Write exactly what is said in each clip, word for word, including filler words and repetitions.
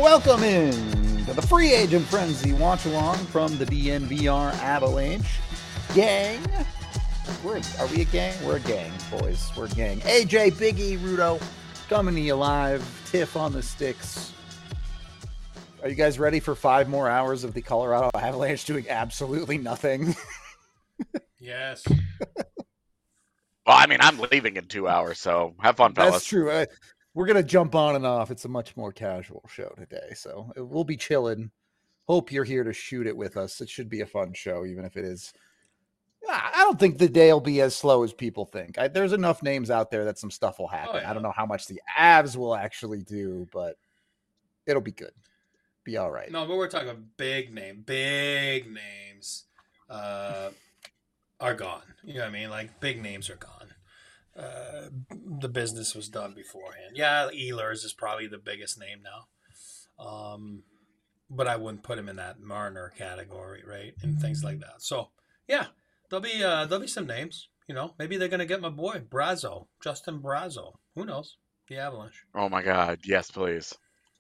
Welcome in to the Free Agent Frenzy watch along from the D N V R Avalanche gang. We're, are we a gang? We're a gang, boys. We're a gang. A J, Biggie, Rudo, coming to you live. Tiff on the sticks. Are you guys ready for five more hours of the Colorado Avalanche doing absolutely nothing? Yes. Well, I mean, I'm leaving in two hours, so have fun, fellas. That's true. I, we're going to jump on and off. It's a much more casual show today, so we'll be chilling. Hope you're here to shoot it with us. It should be a fun show, even if it is. I don't think the day will be as slow as people think. I, there's enough names out there that some stuff will happen. Oh, yeah. I don't know how much the Avs will actually do, but it'll be good. Be all right. No, but we're talking big name, big names uh, are gone. You know what I mean? Like, big names are gone. Uh, the business was done beforehand. Yeah, Ehlers is probably the biggest name now. Um, but I wouldn't put him in that Marner category, right? And things like that. So, yeah, there'll be uh, there'll be some names. You know, maybe they're going to get my boy, Brazo, Justin Brazo. Who knows? The Avalanche. Oh, my God. Yes, please.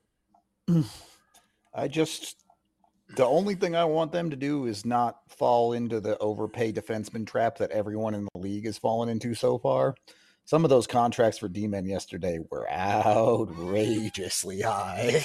I just, the only thing I want them to do is not fall into the overpay defenseman trap that everyone in the league has fallen into so far. Some of those contracts for D-men yesterday were outrageously high.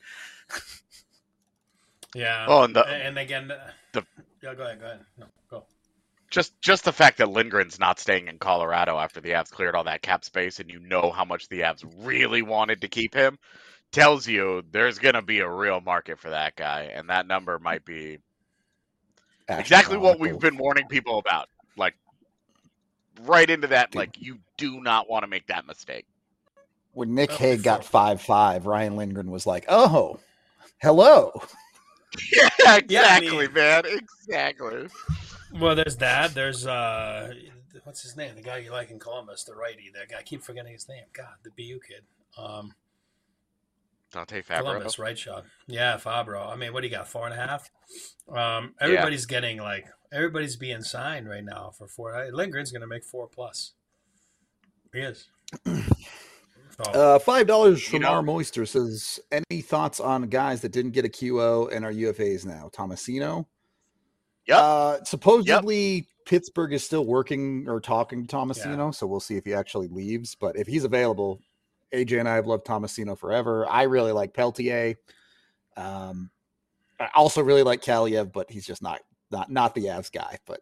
Yeah. Oh, and the, and again, the yeah, go ahead, go ahead. No, go. just just the fact that Lindgren's not staying in Colorado after the Avs cleared all that cap space, and you know how much the Avs really wanted to keep him, tells you there's going to be a real market for that guy, and that number might be exactly what we've been warning people about. Like, right into that, Dude. Like, you do not want to make that mistake. When Nick oh, Hague got five five, Ryan Lindgren was like, oh, hello. Yeah, exactly, yeah, I mean, man, exactly. Well, there's that. There's, uh, what's his name? The guy you like in Columbus, the righty. That guy, I keep forgetting his name. God, the B U kid. Um, Dante Fabro. Columbus, right shot. Yeah, Fabro. I mean, what do you got? Four and a half. Um, everybody's yeah. getting like everybody's being signed right now for four. Lindgren's going to make four plus. He is. So, uh, Five dollars from you know, our Moister says, any thoughts on guys that didn't get a Q O and are U F As now? Tomasino. Yeah. Uh, supposedly yep. Pittsburgh is still working or talking to Tomasino, yeah. so we'll see if he actually leaves. But if he's available. A J and I have loved Tomasino forever. I really like Peltier. Um, I also really like Kaliev, but he's just not not not the Avs guy. But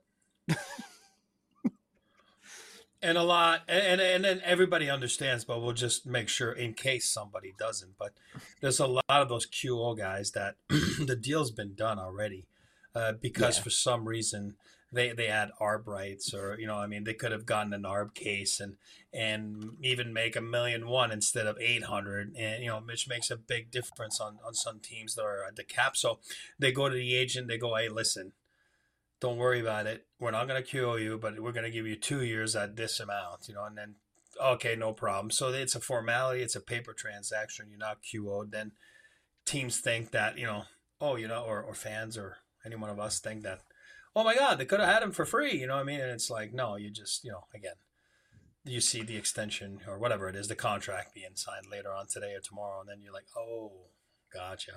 and a lot, and and then everybody understands, but we'll just make sure in case somebody doesn't. But there's a lot of those Q O guys that the deal's been done already uh, because yeah. for some reason. They they add arb rights, or you know, I mean, they could have gotten an arb case and and even make a million one instead of eight hundred, and you know, which makes a big difference on, on some teams that are at the cap. So they go to the agent, they go, hey, listen, don't worry about it. We're not going to Q O you, but we're going to give you two years at this amount, you know, and then okay, no problem. So it's a formality, it's a paper transaction. You're not Q O'd. Then teams think that you know, oh, you know, or or fans or any one of us think that. Oh my God, they could have had him for free, you know what I mean? And it's like, no, you just, you know, again, you see the extension or whatever it is, the contract being signed later on today or tomorrow, and then you're like, oh, gotcha.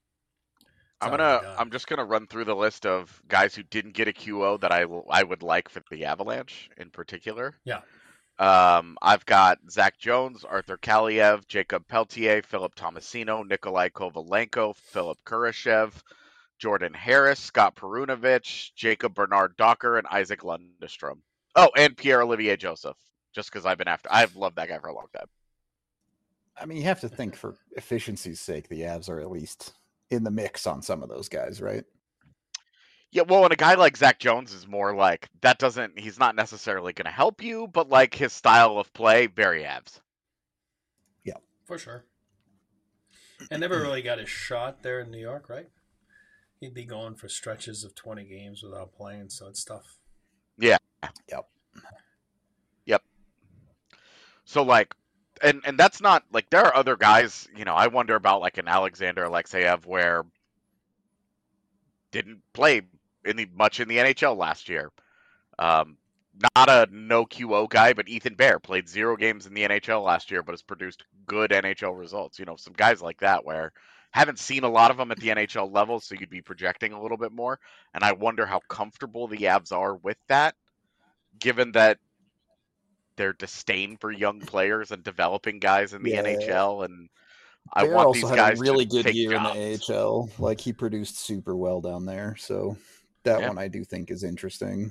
I'm gonna, I'm just gonna run through the list of guys who didn't get a Q O that I will, I would like for the Avalanche in particular. Yeah. Um, I've got Zach Jones, Arthur Kaliev, Jacob Peltier, Philip Tomasino, Nikolai Kovalenko, Philip Kurashev, Jordan Harris, Scott Perunovich, Jacob Bernard Docker, and Isaac Lundestrom. Oh, and Pierre-Olivier Joseph, just because I've been after. I've loved that guy for a long time. I mean, you have to think for efficiency's sake, the Avs are at least in the mix on some of those guys, right? Yeah, well, and a guy like Zach Jones is more like, that doesn't, he's not necessarily going to help you, but like his style of play, very Avs. Yeah. For sure. And never really got his shot there in New York, right? He'd be going for stretches of twenty games without playing, so it's tough. Yeah. Yep. Yep. So, like, and, and that's not, like, there are other guys, you know, I wonder about, like, an Alexander Alexeyev where didn't play in the, much in the N H L last year. Um, not a no Q O guy, but Ethan Bear played zero games in the N H L last year, but has produced good N H L results. You know, some guys like that where haven't seen a lot of them at the N H L level, so you'd be projecting a little bit more. And I wonder how comfortable the Avs are with that, given that their disdain for young players and developing guys in the Yeah. N H L. And I Bear want also these had guys a really to good take year jobs. in the A H L. Like, he produced super well down there. So that Yeah. one I do think is interesting.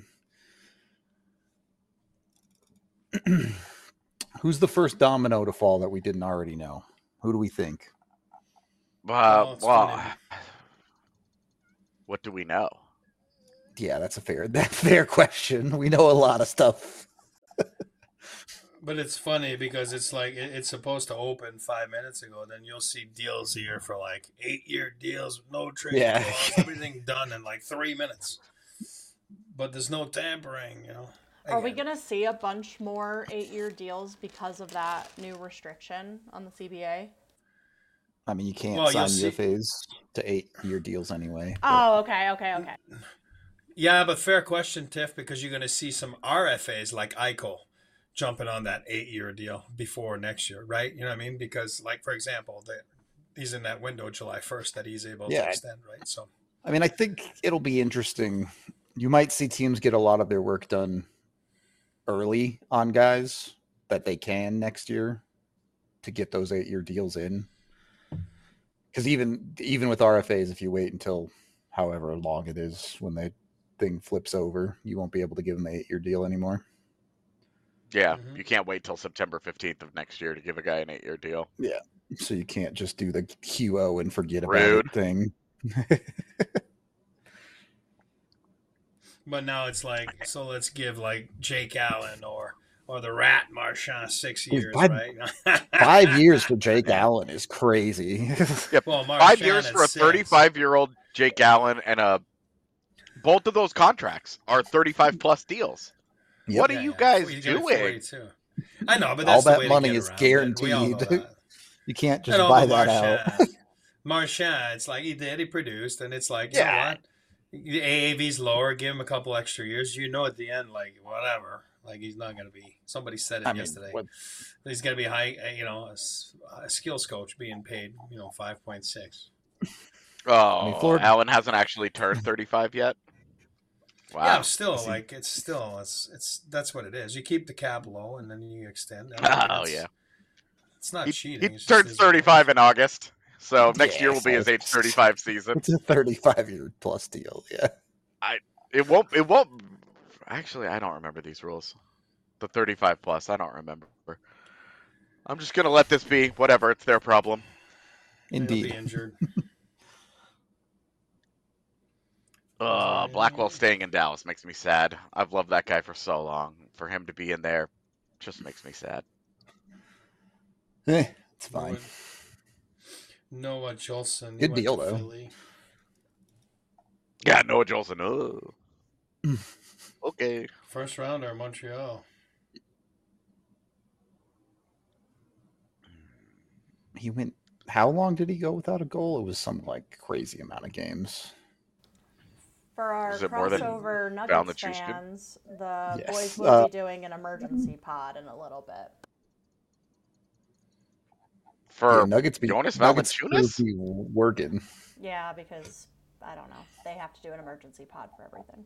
Who's the first domino to fall that we didn't already know? Who do we think? Uh, Well, it's well, funny. what do we know? Yeah, that's a fair that's a fair question. We know a lot of stuff. But it's funny because it's like it- it's supposed to open five minutes ago. Then you'll see deals here for like eight-year deals with no trade Yeah. clause, everything done in like three minutes. But there's no tampering, you know. Are we Again, going to see a bunch more eight-year deals because of that new restriction on the C B A? I mean, you can't Well, you'll sign see- U F As to eight-year deals anyway. but- Oh, okay, okay, okay. Yeah, but fair question, Tiff, because you're going to see some R F As like Eichel jumping on that eight-year deal before next year, right? You know what I mean? Because, like, for example, the, he's in that window July first that he's able Yeah. to extend, right? So, I mean, I think it'll be interesting. You might see teams get a lot of their work done early on guys that they can next year to get those eight-year deals in. Because even even with R F As, if you wait until however long it is when the thing flips over, you won't be able to give them the eight-year deal anymore. Yeah, Mhm. you can't wait till September fifteenth of next year to give a guy an eight-year deal. So you can't just do the Q O and forget about Rude. it thing. but now it's like, so let's give like Jake Allen or or the Rat Marchand six Dude, years, five- right? Five years for Jake Allen is crazy. Well, Five Marchand years at for a six. thirty-five-year-old Jake Allen, and a both of those contracts are thirty-five plus deals. Yep. What Yeah, are you yeah. guys You get it doing? forty-two. I know, but All that's the that way to money get is around it. We all know guaranteed. that. You can't just And all buy the that out. Marchand, Marchand, it's like he did, he produced, and it's like, you know Yeah. what? The A A V's lower, give him a couple extra years. You know, at the end, like, whatever. Like, he's not going to be, somebody said it I mean, yesterday. what- He's going to be high, uh, you know, a, s- a skills coach being paid, you know, five point six. Oh, mean, Florida- Allen hasn't actually turned thirty-five yet. Wow. Yeah, still, Is he- like, it's still, it's, it's, that's what it is. You keep the cap low and then you extend. I mean, Oh, it's- yeah. It's not He, cheating. he it's just turns his- thirty-five in August, so next Yeah, year will be so his age it's- thirty-five season. It's a thirty-five-year plus deal. Yeah. It won't. It won't. Actually, I don't remember these rules. The thirty-five plus. I don't remember. I'm just gonna let this be. Whatever. It's their problem. He'll Indeed. be injured. Uh, Blackwell staying in Dallas makes me sad. I've loved that guy for so long. For him to be in there, just makes me sad. Eh, it's fine. Noah Jolson. he Good went deal, to though. Philly. Yeah, Noah Jolson. Oh. Okay. First rounder, Montreal. He went. How long did he go without a goal? It was some like crazy amount of games. For our Is it more than crossover Val Nuggets Nichushkin? fans, the Yes. boys will Uh, be doing an emergency pod in a little bit. For Yeah, Nuggets be Jonas Nuggets Valanciunas? be working. Yeah, because I don't know. They have to do an emergency pod for everything.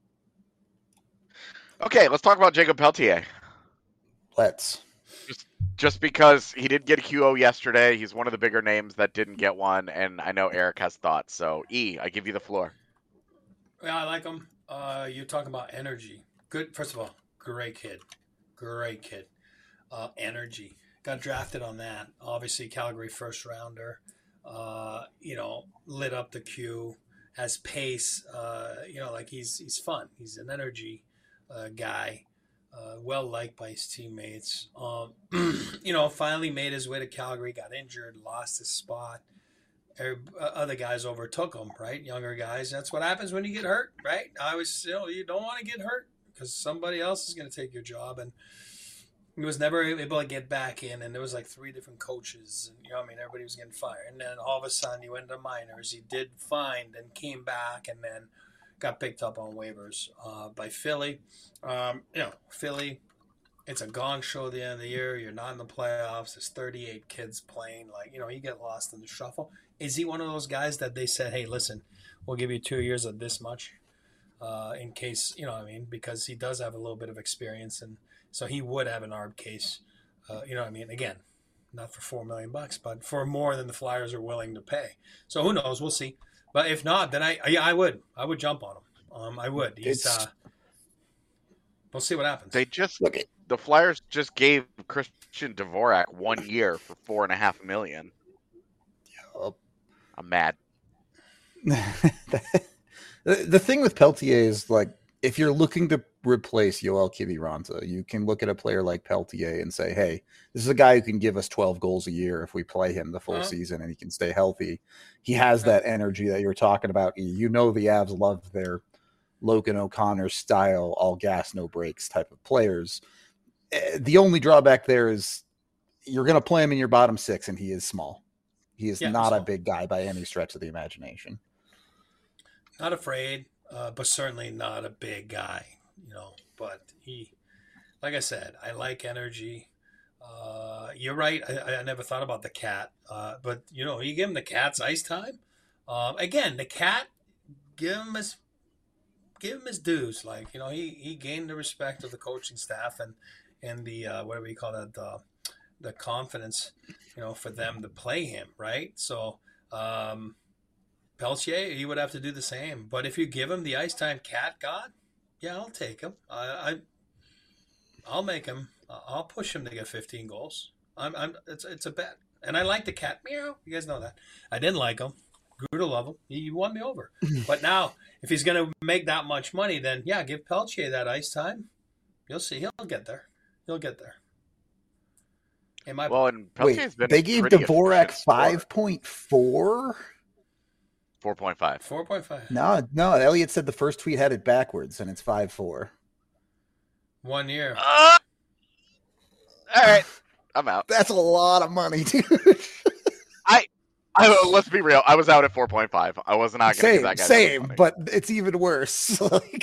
Okay, let's talk about Jacob Peltier. Let's. Just because he did get a Q O yesterday, he's one of the bigger names that didn't get one, and I know Eric has thoughts. So, E, I give you the floor. Yeah, I like him. Uh, you're talking about energy. Good. First of all, great kid. Great kid. Uh, energy. Got drafted on that. Obviously, Calgary first rounder. Uh, you know, lit up the queue. Has pace. Uh, you know, like he's he's fun. He's an energy uh, guy. Uh, well liked by his teammates. Um, you know, finally made his way to Calgary. Got injured. Lost his spot. Every, uh, other guys overtook him, right? Younger guys. That's what happens when you get hurt, right? I was still, you don't want to get hurt because somebody else is going to take your job. And he was never able to get back in. And there was like three different coaches. And, you know, I mean, everybody was getting fired. And then all of a sudden he went to minors. He did fine and came back and then got picked up on waivers uh, by Philly. Um, you know, Philly, it's a gong show at the end of the year. You're not in the playoffs. There's thirty-eight kids playing. Like, you know, you get lost in the shuffle. Is he one of those guys that they said, "Hey, listen, we'll give you two years of this much, uh, in case you know what I mean," because he does have a little bit of experience, and so he would have an arb case. Uh, you know what I mean? Again, not for four million bucks, but for more than the Flyers are willing to pay. So who knows? We'll see. But if not, then I yeah I would I would jump on him. Um, I would. He's It's uh, we'll see what happens. They just look. It, the Flyers just gave Christian Dvorak one year for four and a half million. I'm mad. the, the thing with Peltier is like if you're looking to replace Yoel Kiviranta, you can look at a player like Peltier and say, hey, this is a guy who can give us twelve goals a year if we play him the full uh-huh. season and he can stay healthy. He has that energy that you were talking about. You know the Avs love their Logan O'Connor style, all gas, no brakes type of players. The only drawback there is you're going to play him in your bottom six and he is small. He is yeah, not a big guy by any stretch of the imagination. Not afraid, uh, but certainly not a big guy, you know. But he, like I said, I like energy. Uh, you're right. I, I never thought about the cat, uh, but you know, you give him the cat's ice time. Um, again, the cat, give him his, give him his dues. Like you know, he he gained the respect of the coaching staff and and the uh, whatever you call that the the confidence, you know, for them to play him right. So. Um, Peltier, he would have to do the same. But if you give him the ice time cat god, yeah, I'll take him. I, I I'll make him. I'll push him to get fifteen goals. I'm, I'm. It's it's a bet, and I like the cat. Meow. You guys know that. I didn't like him. Grew to love him. He won me over. But now, if he's going to make that much money, then yeah, give Peltier that ice time. You'll see. He'll get there. He'll get there. In my well, and Peltier's Wait, been they gave Dvorak five point four. four point five. four point five. No, no. Elliot said the first tweet had it backwards, and it's five four. One year. Uh, all right, I'm out. That's a lot of money, dude. I, I let's be real. I was out at four point five. I was not going to give that guy same, money. But it's even worse.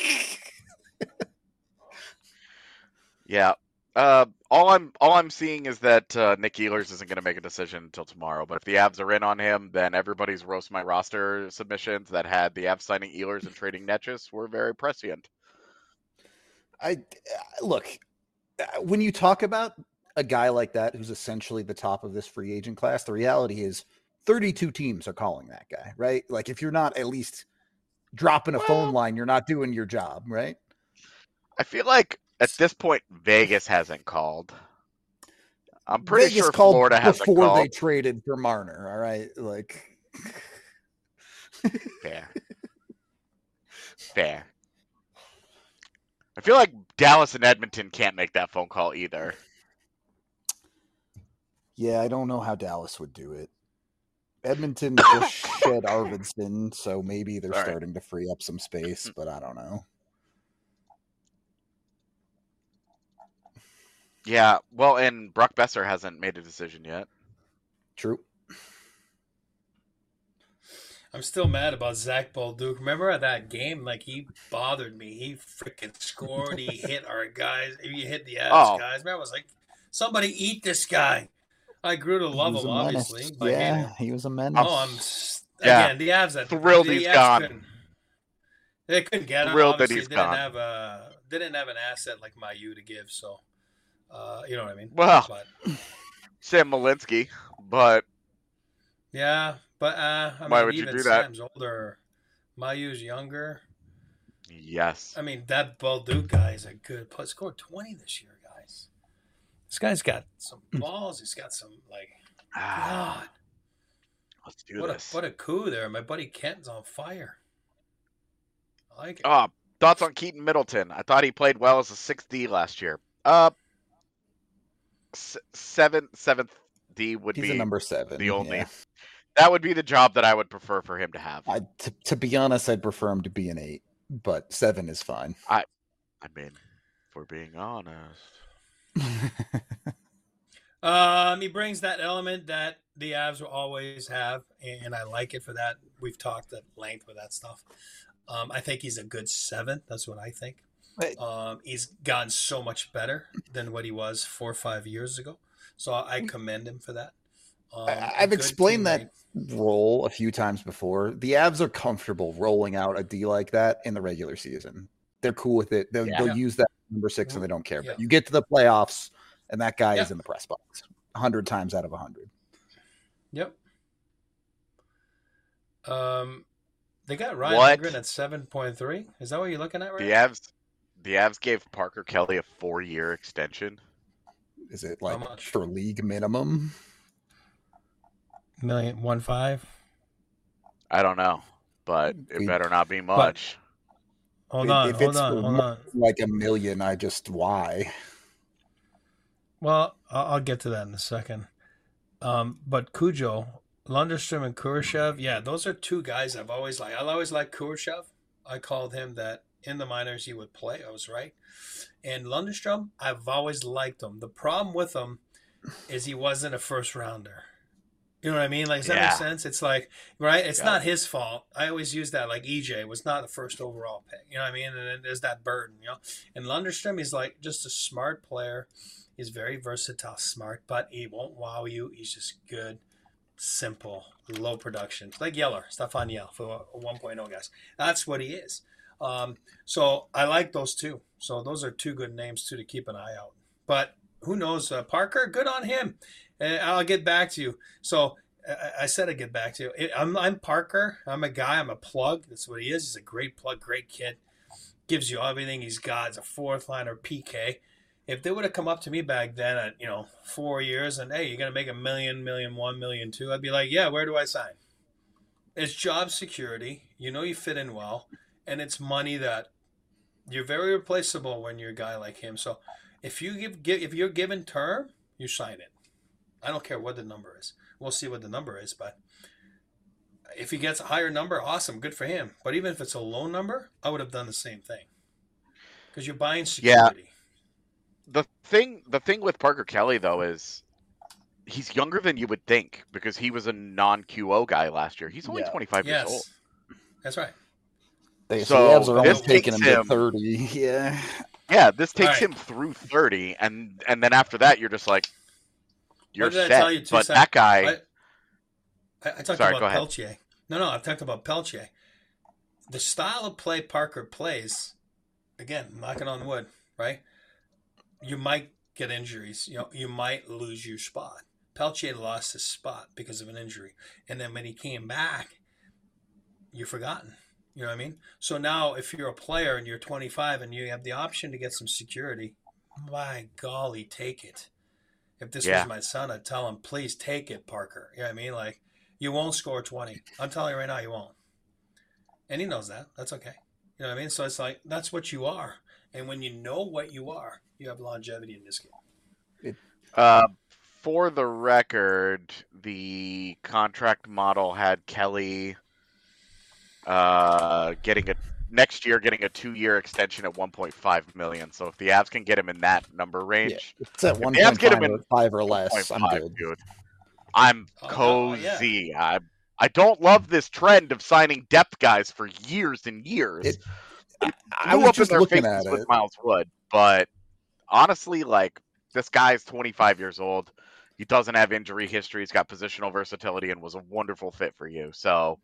Yeah. Uh, all I'm all I'm seeing is that uh, Nick Ehlers isn't going to make a decision until tomorrow. But if the Avs are in on him, then everybody's roast my roster submissions that had the Avs signing Ehlers and trading Netchus were very prescient. I look when you talk about a guy like that who's essentially the top of this free agent class. The reality is, thirty-two teams are calling that guy, right? Like if you're not at least dropping a well, phone line, you're not doing your job, right? I feel like. At this point, Vegas hasn't called. I'm pretty Vegas sure called Florida hasn't before called. They traded for Marner. All right, like fair, fair. I feel like Dallas and Edmonton can't make that phone call either. Yeah, I don't know how Dallas would do it. Edmonton just shed Arvidsson, so maybe they're All starting right. to free up some space, but I don't know. Yeah, well, and Brock Besser hasn't made a decision yet. True. I'm still mad about Zach Bolduc. Remember at that game? Like, he bothered me. He freaking scored. He hit our guys. He hit the Avs oh. guys. Man, I was like, somebody eat this guy. I grew to love him, obviously. But yeah, he was a menace. Oh, I'm yeah. again the Avs. That, Thrilled the he's Avs gone. Couldn't, they couldn't get him. Thrilled Obviously, that he's didn't gone. have a didn't have an asset like Mayu to give. So, uh, you know what I mean. Well, but, Sam Malinsky, but yeah, but uh, I why mean, would you even do that? Sam's older. Mayu's younger. Yes. I mean, that Bolduc guy is a good player. Scored twenty this year, guys. This guy's got some balls. He's got some, like, God. Let's do what this. A, what a coup there. My buddy Kenton's on fire. I like it. Oh, thoughts on Keaton Middleton? I thought he played well as a sixth D last year. Uh, s- seven, seventh D would He's be a number seven. the only. Yeah. That would be the job that I would prefer for him to have. I, to, to be honest, I'd prefer him to be an eight, but seven is fine. I, I mean, for being honest. um, he brings that element that the Avs will always have, and I like it for that. We've talked at length with that stuff. Um, I think he's a good seven. That's what I think. Right. Um, he's gotten so much better than what he was four or five years ago. So I commend him for that. Um, I've good explained teammate. that role a few times before. The Avs are comfortable rolling out a D like that in the regular season. They're cool with it. They'll, Yeah. they'll Yeah. use that number six and they don't care. Yeah. But you get to the playoffs, and that guy Yeah. is in the press box a hundred times out of a hundred. Yep. Um, they got Ryan What? Lindgren at seven point three. Is that what you're looking at right The now? Avs, the Avs gave Parker Kelly a four-year extension. Is it How like much? for league minimum? Million one five. I don't know, but it We- better not be much. Hold If- on, if hold it's on, for hold more on. than like a million, I just why? Well, I'll, I'll get to that in a second. Um, but Cujo, Lundestrom, and Kurashev, yeah, those are two guys I've always liked. I always liked Kurashev. I called him that in the minors he would play. I was right. And Lundestrom, I've always liked him. The problem with him is he wasn't a first rounder. You know what I mean? Like, does that Yeah. make sense? It's like, right? It's Yeah. not his fault. I always use that. Like, E J was not the first overall pick. You know what I mean? And then there's that burden, you know? And Lundestrom, he's like just a smart player. He's very versatile, smart, but he won't wow you. He's just good, simple, low production. Like Yeller, Stefan Yell for a one point oh guys. That's what he is. Um, so I like those two. So those are two good names, too, to keep an eye out. But who knows? Uh, Parker, good on him. And I'll get back to you. So I, I said I'd get back to you. I'm, I'm Parker. I'm a guy. I'm a plug. That's what he is. He's a great plug, great kid. Gives you everything he's got. He's a fourth liner P K. If they would have come up to me back then at, you know, four years and, hey, you're going to make a million, million one, million two, I'd be like, yeah, where do I sign? It's job security. You know you fit in well. And it's money that you're very replaceable when you're a guy like him. So if you give, give if you're given term, you sign it. I don't care what the number is. We'll see what the number is, but if he gets a higher number, awesome, good for him. But even if it's a low number, I would have done the same thing because you're buying security. The thing, the thing with Parker Kelly though is he's younger than you would think because he was a non-Q O guy last year. He's only Yeah. twenty-five Yes, years old. that's right. They, So, so the Avs are this almost taking takes him to him- thirty. Yeah. Yeah, this takes All right. him through thirty, and and then after that, you're just like, you're What did I set. tell you two but sec- that guy, I, I, I talked Sorry, go about ahead. Peltier. No, no, I've talked about Peltier. The style of play Parker plays, again, knocking on wood, right? You might get injuries. You know, you might lose your spot. Peltier lost his spot because of an injury, and then when he came back, you're forgotten. You know what I mean? So now, if you're a player and you're twenty-five and you have the option to get some security, my golly, take it. If this Yeah. was my son, I'd tell him, please take it, Parker. You know what I mean? Like, you won't score twenty. I'm telling you right now, you won't. And he knows that. That's okay. You know what I mean? So it's like, that's what you are. And when you know what you are, you have longevity in this game. uh, for the record, the contract model had Kelly uh, getting a next year getting a two-year extension at one point five million. So if the Avs can get him in that number range, It's at If one the Avs point get him five in or five or less. I'm one point five, good. dude, I'm Oh, no, yeah. cozy. I I don't love this trend of signing depth guys for years and years. It- It I blew was up in just their looking faces at with it. Miles Wood, but honestly, like this guy's twenty-five years old. He doesn't have injury history. He's got positional versatility and was a wonderful fit for you. So,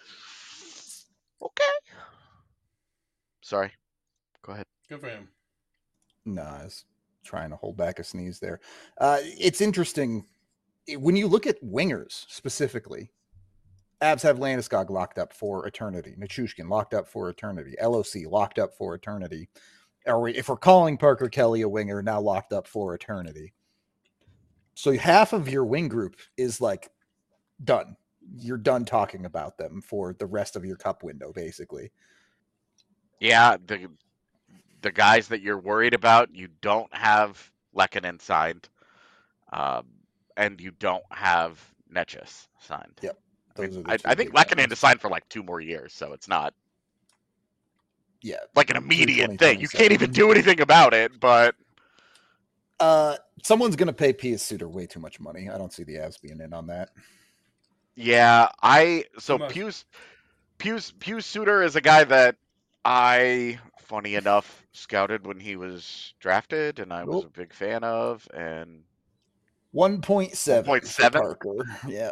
okay. Sorry. Go ahead. Good for him. No, I was trying to hold back a sneeze there. Uh, it's interesting when you look at wingers specifically. Avs have Landeskog locked up for eternity. Nichushkin locked up for eternity. L O C locked up for eternity. Or we, if we're calling Parker Kelly a winger, now locked up for eternity. So half of your wing group is like done. You're done talking about them for the rest of your cup window, basically. Yeah, the the guys that you're worried about, you don't have Lehkonen signed, um, and you don't have Netchus signed. Yep. I, Those mean, are the I, two I think big Lehkonen ones. is signed for like two more years, so it's not Yeah. like an through immediate thing. You can't even twenty twenty-seven. do anything about it, but Uh, someone's going to pay Pius Suter way too much money. I don't see the Avs being in on that. yeah, I so Too much. Pius Pius Pius Suter is a guy that I, funny enough, scouted when he was drafted, and I was Oh. a big fan of, and one point seven for Parker. Yeah.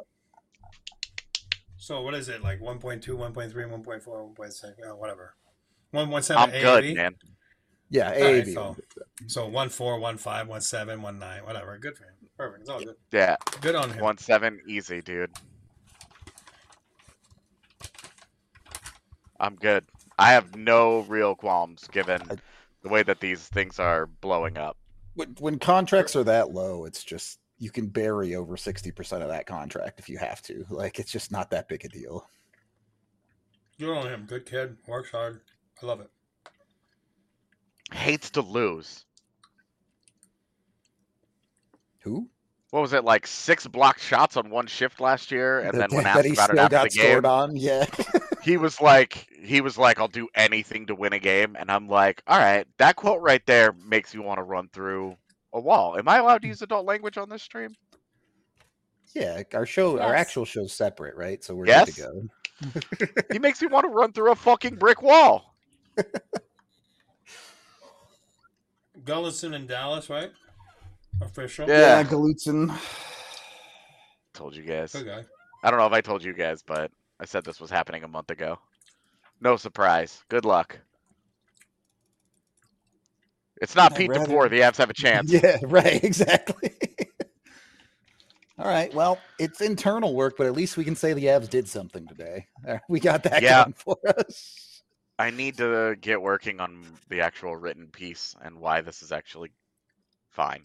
So what is it, like one point two, one point three, one point four, one point six, uh, whatever. one point seven I'm A A V? good, man. Yeah, A A V. Right, so, so one four, one five, one seven, one nine, whatever. Good for him. Perfect. It's all good. Yeah. Good on him. one seven, easy, dude. I'm good. I have no real qualms given the way that these things are blowing up. When, when contracts are that low, it's just, you can bury over sixty percent of that contract if you have to. Like, it's just not that big a deal. Good on him. Good kid. Works hard. I love it. Hates to lose. Who? What was it, like six blocked shots on one shift last year? And that, then when that asked he about it still after got the game, on? Yeah. he was like, he was like, I'll do anything to win a game. And I'm like, all right, that quote right there makes you want to run through a wall. Am I allowed to use adult language on this stream? Yeah, our show, Yes. our actual show's separate, right? So we're Yes? good to go. He makes me want to run through a fucking brick wall. Gullison in Dallas, right? Official. Yeah. Yeah, Galutson. Told you guys. Good guy. I don't know if I told you guys, but I said this was happening a month ago. No surprise. Good luck. It's not I'd Pete rather- DePore. The Avs have a chance. Yeah, right, exactly. All right, well, it's internal work, but at least we can say the Avs did something today. Uh, We got that Yeah. going for us. I need to get working on the actual written piece and why this is actually fine.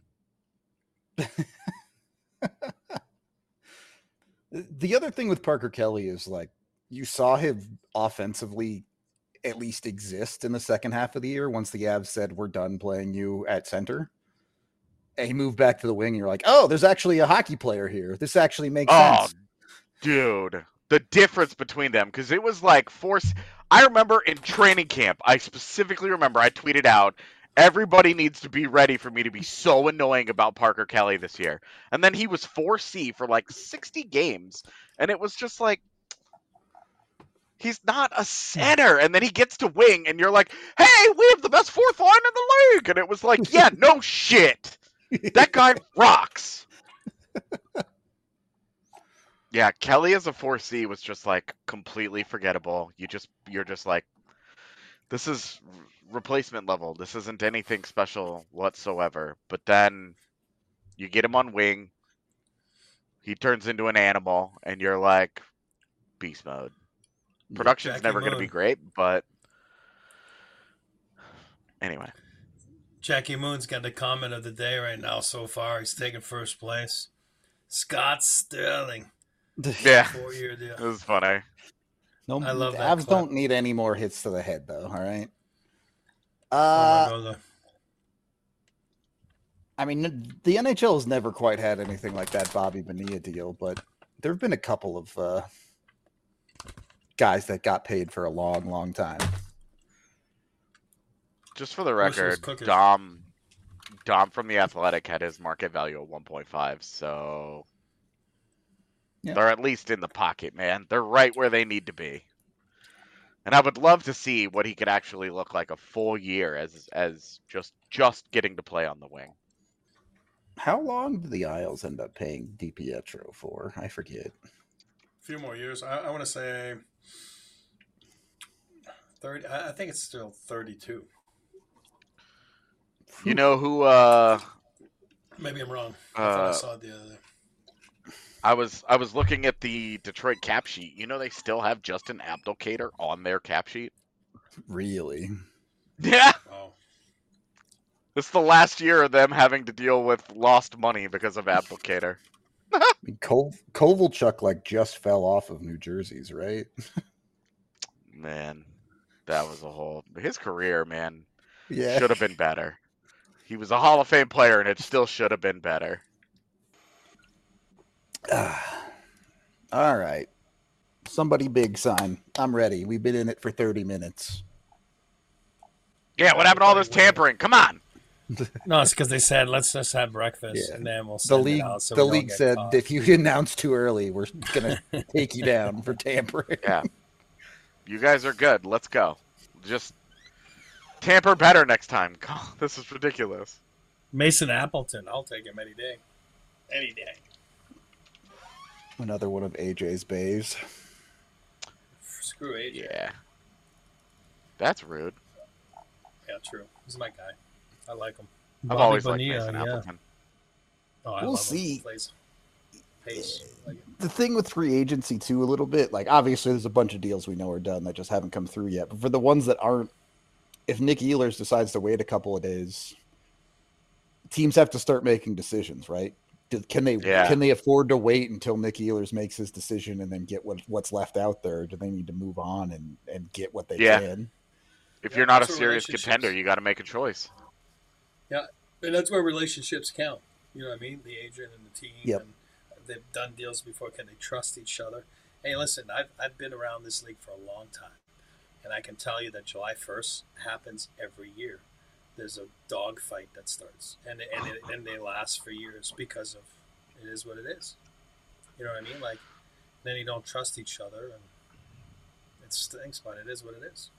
The other thing with Parker Kelly is, like, you saw him offensively at least exist in the second half of the year once the Avs said, we're done playing you at center. And he moved back to the wing, and you're like, oh, there's actually a hockey player here. This actually makes Oh, sense. dude. The difference between them, because it was like force. I remember in training camp, I specifically remember I tweeted out, everybody needs to be ready for me to be so annoying about Parker Kelly this year. And then he was four C for like sixty games. And it was just like, he's not a center. And then he gets to wing, and you're like, hey, we have the best fourth line in the league. And it was like, yeah, no shit. That guy rocks. Yeah, Kelly as a four C was just like completely forgettable. You just you're just like, this is replacement level. This isn't anything special whatsoever. But then you get him on wing, he turns into an animal, and you're like, beast mode. Production's Jackie never going to Moon. be great, but anyway. Jackie Moon's got the comment of the day right now so far. He's taking first place. Scott Sterling. Yeah, Four-year deal. it was funny. No, I love the that Avs clip. don't need any more hits to the head, though. All right. Oh Uh, my God. I mean, the N H L has never quite had anything like that Bobby Bonilla deal, but there have been a couple of uh, guys that got paid for a long, long time. Just for the Wish it was record, cookies. Dom Dom from The Athletic had his market value at one point five, so Yeah. they're at least in the pocket, man. They're right where they need to be. And I would love to see what he could actually look like a full year as as just just getting to play on the wing. How long did the Isles end up paying DiPietro for? I forget. A few more years. I, I want to say thirty. I, I think it's still thirty-two. You know who uh Maybe I'm wrong. I thought I Uh, saw it the other day. I was I was looking at the Detroit cap sheet. You know they still have Justin Abdelkader on their cap sheet? Really? Yeah. Oh, This is the last year of them having to deal with lost money because of Abdelkader. I mean, Kov- Kovalchuk like just fell off of New Jersey's, right? Man, that was a whole his career, man. Yeah. Should have been better. He was a Hall of Fame player, and it still should have been better. All right. Somebody big sign. I'm ready. We've been in it for thirty minutes. Yeah, what happened to all this tampering? Come on. no, it's because they said let's just have breakfast Yeah. and then we'll The send league, it out. So the we don't league get said caught. if you announce too early, we're gonna take you down for tampering. Yeah. You guys are good. Let's go. Just tamper better next time. God, this is ridiculous. Mason Appleton, I'll take him any day. Any day. Another one of A J's bays. Screw A J. Yeah. That's rude. Yeah, true. He's my guy. I like him. I've Bobby always Bonilla, liked Mason yeah. Appleton. Oh, I We'll love see. him. He plays pace. Like it. The thing with free agency too, a little bit, like obviously there's a bunch of deals we know are done that just haven't come through yet. But for the ones that aren't, if Nick Ehlers decides to wait a couple of days, teams have to start making decisions, right? Do, can they Yeah. can they afford to wait until Nick Ehlers makes his decision and then get what, what's left out there? Or do they need to move on and, and get what they Yeah. can? If Yeah, you're not a that's what serious relationships- contender, you got to make a choice. Yeah, and that's where relationships count. You know what I mean? The agent and the team. Yep. And they've done deals before. Can they trust each other? Hey, listen, I've, I've been around this league for a long time. And I can tell you that July first happens every year. There's a dog fight that starts. And, and, it, and they last for years because of it is what it is. You know what I mean? Like, then you don't trust each other. And it stinks, but it is what it is.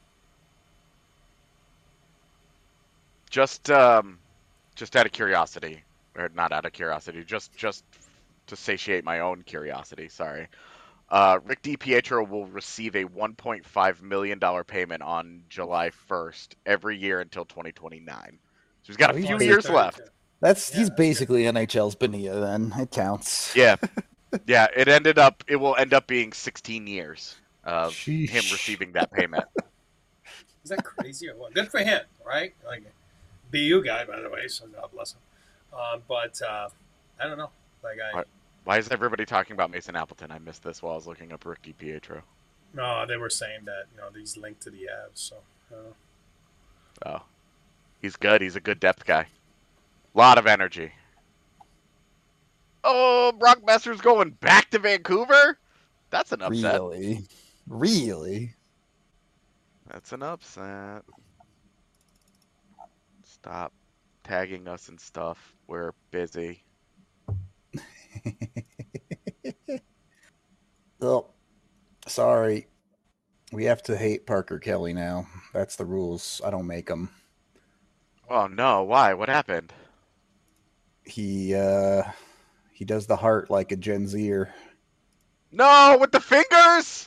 Just, um, just out of curiosity, or not out of curiosity, just, just to satiate my own curiosity. Sorry. Uh, Rick DiPietro will receive a one point five million dollars payment on July first every year until twenty twenty-nine. So he's got a Oh, he's few big. years left. That's Yeah, he's that's basically N H L's Bonilla then. It counts. Yeah. Yeah, it ended up, it will end up being sixteen years of Sheesh. him receiving that payment. Is that crazy or what? Good for him, right? Like, B U guy, by the way, so God bless him. Um, but uh, I don't know. Like I, What? Why is everybody talking about Mason Appleton? I missed this while I was looking up Rick DiPietro. no, they were saying that you know he's linked to the Avs. So I don't know. Oh. He's good. He's a good depth guy. Lot of energy. Oh, Brock Besser's going back to Vancouver? That's an upset. Really? Really? That's an upset. Stop tagging us and stuff. We're busy. Well, sorry. We have to hate Parker Kelly now. That's the rules. I don't make them. Oh no, why? What happened? He uh he does the heart like a Gen Zer. No, with the fingers?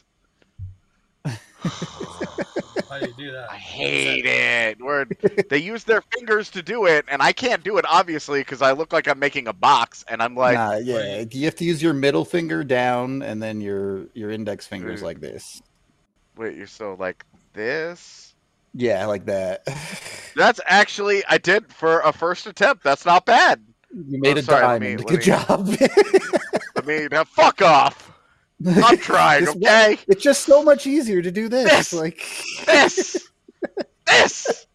How do you do that? I hate it. Where they use their fingers to do it, and I can't do it obviously because I look like I'm making a box, and I'm like, nah, yeah. You have to use your middle finger down and then your your index fingers Mm. like this. wait, you're so like this? Yeah, like that. That's actually I did for a first attempt. That's not bad. You made Oh, a sorry, let me- diamond. let Good me- job. I mean, uh, fuck off. I'm trying, This okay? one- it's just so much easier to do this. This! Like This, this.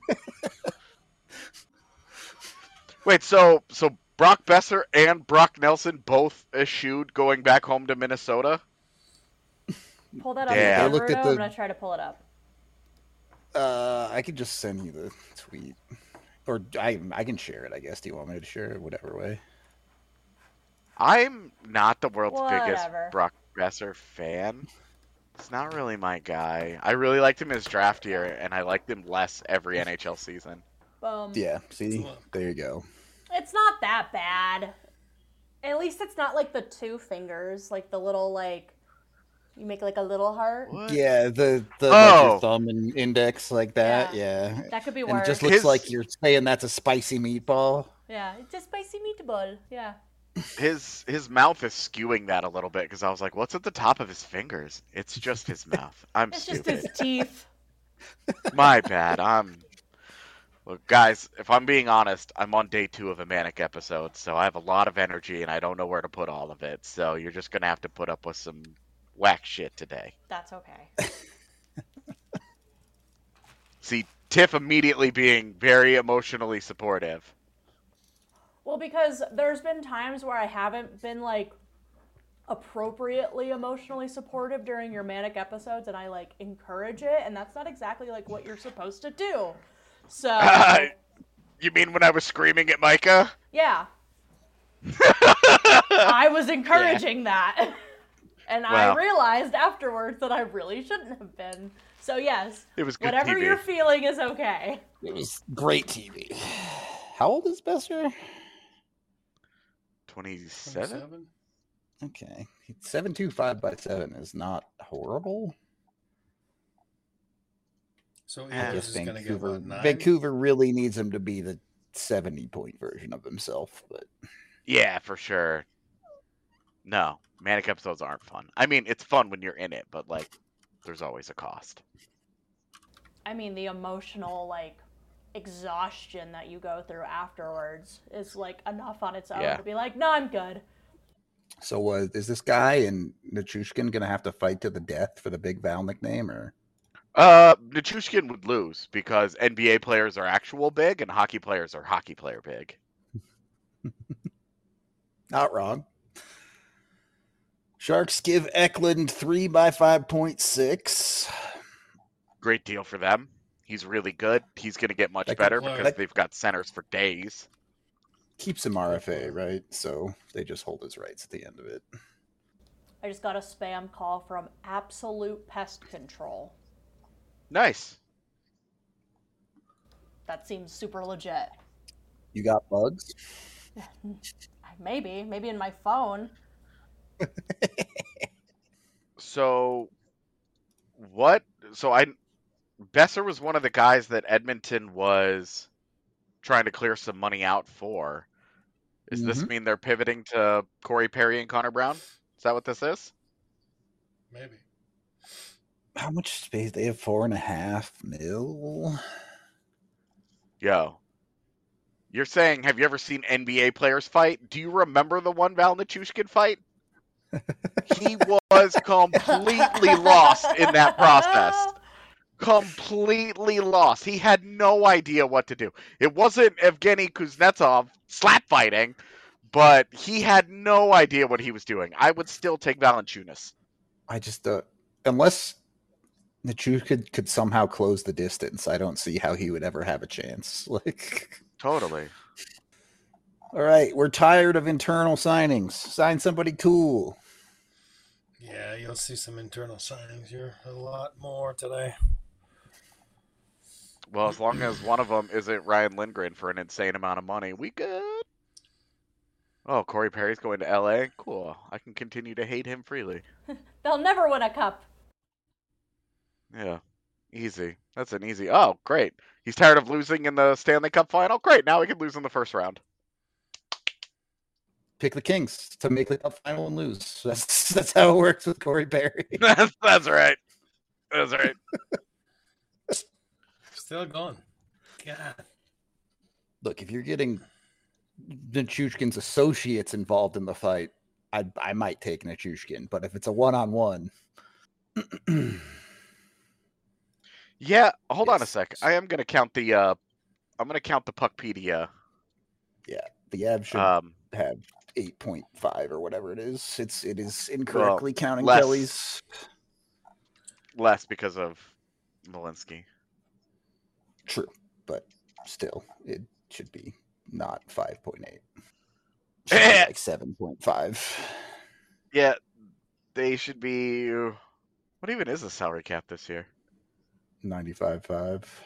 Wait, so so Brock Besser and Brock Nelson both eschewed going back home to Minnesota? Pull that up. Yeah. Yeah. I looked at I'm the- gonna try to pull it up. Uh, I could just send you the tweet, or I I can share it. I guess. Do you want me to share it? Whatever way. I'm not the world's biggest Whatever. Brock Besser fan. It's not really my guy. I really liked him as draft year, and I liked him less every N H L season. Boom. Yeah. See, there you go. It's not that bad. At least it's not like the two fingers, like the little like you make like a little heart. What? Yeah, the the Oh. like your thumb and index like that. Yeah. That could be And worse. it just looks His- like you're saying that's a spicy meatball. Yeah, it's a spicy meatball. Yeah. His his mouth is skewing that a little bit because I was like, "What's at the top of his fingers?" It's just his mouth. I'm It's just stupid. his teeth. My bad. I'm. Look, guys, if I'm being honest, I'm on day two of a manic episode, so I have a lot of energy and I don't know where to put all of it. So you're just gonna have to put up with some whack shit today. That's okay. See, Tiff immediately being very emotionally supportive. Well, because there's been times where I haven't been like appropriately emotionally supportive during your manic episodes, and I like encourage it, and that's not exactly like what you're supposed to do. So You mean when I was screaming at Micah? yeah, I was encouraging that, and Well. I realized afterwards that I really shouldn't have been. So yes, It was good whatever T V. you're feeling is okay. It was great T V. How old is Besser? twenty-seven? twenty-seven? Okay. seven two five by seven is not horrible. So I I Ehlers guess is going to get Vancouver, what, nine? Vancouver really needs him to be the seventy-point version of himself. But Yeah, for sure. No, Manic episodes aren't fun. I mean, it's fun when you're in it, but, like, there's always a cost. I mean, the emotional, like, exhaustion that you go through afterwards is, like, enough on its own Yeah. to be like, no, I'm good. so uh, is this guy and Nichushkin going to have to fight to the death for the Big Val nickname? Or Uh, Nichushkin would lose because N B A players are actual big and hockey players are hockey player big. Not wrong. Sharks give Eklund three by five point six. Great deal for them. He's really good. He's going to get much That better could- because that- they've got centers for days. Keeps him R F A, right? So they just hold his rights at the end of it. I just got a spam call from Absolute Pest Control. Nice. That seems super legit. You got bugs? Maybe, maybe in my phone. So, what? So I, Besser was one of the guys that Edmonton was trying to clear some money out for. Does this Mhm. mean they're pivoting to Corey Perry and Connor Brown? Is that what this is? Maybe. How much space? They have four and a half mil. Yo. You're saying, have you ever seen N B A players fight? Do you remember the one Val Nichushkin fight? He was completely lost in that process. Completely lost. He had no idea what to do. It wasn't Evgeny Kuznetsov slap fighting, but he had no idea what he was doing. I would still take Valanciunas. I just uh, unless Nichushkin could, could somehow close the distance, I don't see how he would ever have a chance. Like, Totally. all right, we're tired of internal signings. Sign somebody cool. Yeah, you'll see some internal signings here a lot more today. Well, as long as one of them isn't Ryan Lindgren for an insane amount of money, we good. Oh, Corey Perry's going to L A? Cool. I can continue to hate him freely. They'll never win a cup. Yeah. Easy. That's an easy. Oh, great. He's tired of losing in the Stanley Cup final? Great. Now we can lose in the first round. Pick the Kings to make the cup final and lose. That's that's how it works with Corey Perry. that's, that's right. That's right. Still going. God. Look, if you're getting Nichushkin's associates involved in the fight, I I might take Nichushkin. But if it's a one-on-one, Yeah, hold on a Yes. sec. I am gonna count the uh I'm gonna count the Puckpedia. the Av should Um have eight point five or whatever it is. It's it is incorrectly counting less. Kelly's. less because of Malinsky. True, but still, it should be not five point eight. Should be like seven point five. Yeah, they should be what even is the salary cap this year? ninety-five point five.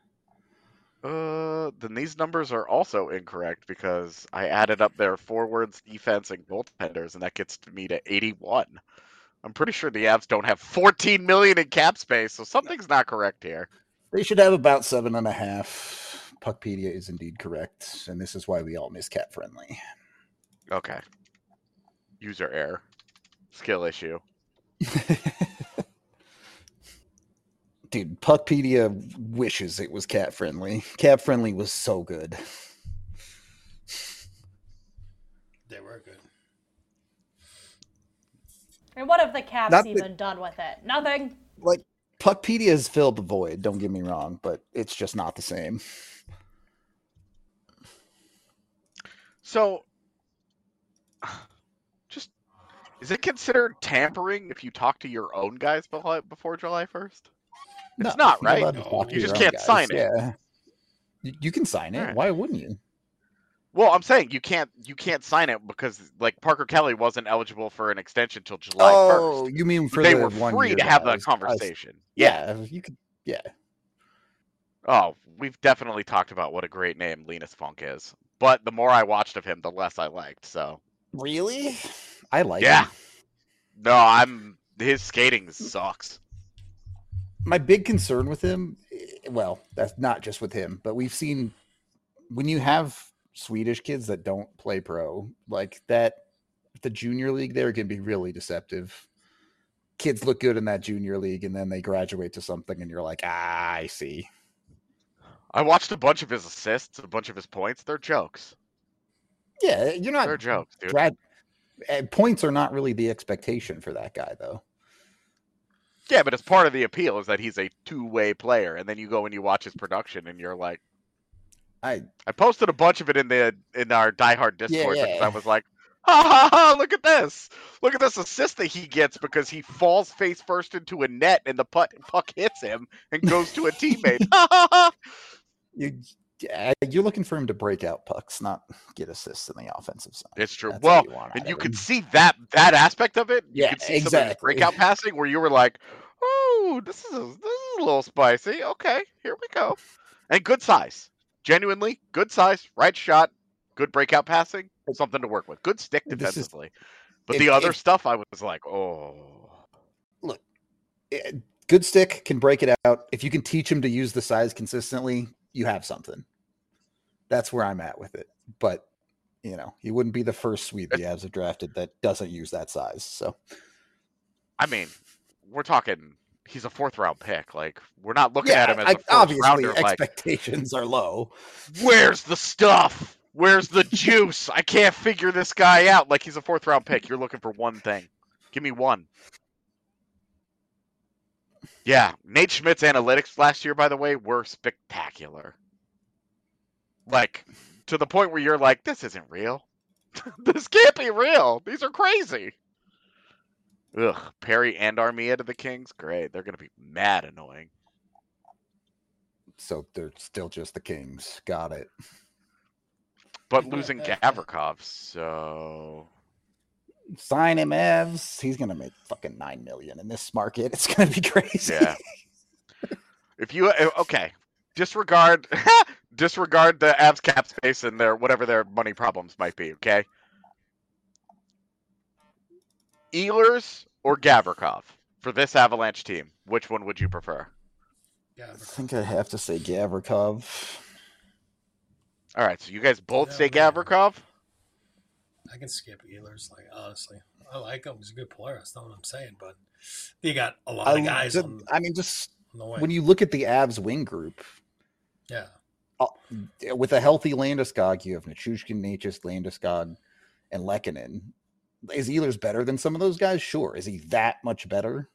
Uh, then these numbers are also incorrect because I added up their forwards, defense, and goaltenders, and that gets me to eighty-one. I'm pretty sure the Avs don't have fourteen million in cap space, so something's not correct here. They should have about seven and a half. Puckpedia is indeed correct, and this is why we all miss cat friendly. Okay. User error. Skill issue. Dude, Puckpedia wishes it was cat friendly. Cat friendly was so good. They were good. And what have the Caps Not that- even done with it? Nothing. Like, Puckpedia has filled the void, don't get me wrong, but it's just not the same. So, just is it considered tampering if you talk to your own guys before before July first? It's not, you're right? allowed to No, talk to you your just own can't guys, sign it. Yeah. You, you can sign it. Alright. Why wouldn't you? Well, I'm saying you can't you can't sign it because like Parker Kelly wasn't eligible for an extension till July Oh, first. you mean for They the were one free year to have guys. that conversation. Yeah, you could. Yeah, Oh, we've definitely talked about what a great name Linus Funk is. But the more I watched of him, the less I liked. So Really? I like Yeah. him. No, I'm his skating sucks. My big concern with him, eh, well, that's not just with him, but we've seen when you have Swedish kids that don't play pro, like that, the junior league there can be really deceptive. Kids look good in that junior league and then they graduate to something and you're like, ah, I see. I watched a bunch of his assists, a bunch of his points. They're jokes. Yeah, you're not They're jokes, dude. grad points are not really the expectation for that guy though. Yeah, but it's part of the appeal is that he's a two-way player, and then you go and you watch his production, and you're like, I I posted a bunch of it in the in our diehard yeah, Discord because I yeah. was like, ha ha ha! Look at this! Look at this assist that he gets because he falls face first into a net, and the puck puck hits him and goes to a teammate. Ha ha ha! You you're looking for him to break out pucks, not get assists in the offensive side. It's true. That's all Well, you want and out you of could him. see that that aspect of it. You Yeah, could see some of his exactly. breakout passing where you were like, "Oh, this is a, this is a little spicy." Okay, here we go. And good size, genuinely good size, right shot, good breakout passing, something to work with. Good stick This is defensively. But if the other if stuff, I was like, "Oh, look, eh, good stick can break it out. If you can teach him to use the size consistently, you have something. That's where I'm at with it. But you know, he wouldn't be the first Swede the it's, Avs have drafted that doesn't use that size. So I mean, we're talking." He's a fourth round pick. Like we're not looking at yeah, him as I, a first obviously rounder. Like expectations are low. where's the stuff? Where's the juice? I can't figure this guy out. Like he's a fourth round pick. You're looking for one thing. Give me one. Yeah, Nate Schmidt's analytics last year, by the way, were spectacular. Like to the point where you're like, this isn't real. This can't be real. These are crazy. Ugh, Perry and Armia to the Kings. Great. They're gonna be mad annoying. So they're still just the Kings. Got it. But losing Gavrikov, so Sign him, Evs. He's gonna make fucking nine million in this market. It's gonna be crazy. yeah. If you okay, disregard disregard the Avs cap space and their whatever their money problems might be. Okay, Ehlers or Gavrikov for this Avalanche team. Which one would you prefer? I think I have to say Gavrikov. All right, so you guys both Yeah, say man. Gavrikov. I can skip Ehlers, like honestly. I like him. He's a good player. That's not what I'm saying. But you got a lot I, of guys just, on, I mean, just on the way. when you look at the Avs wing group, yeah. uh, with a healthy Landeskog, you have Nichushkin, Natchez, Landeskog, and Lehkonen. Is Ehlers better than some of those guys? Sure. Is he that much better?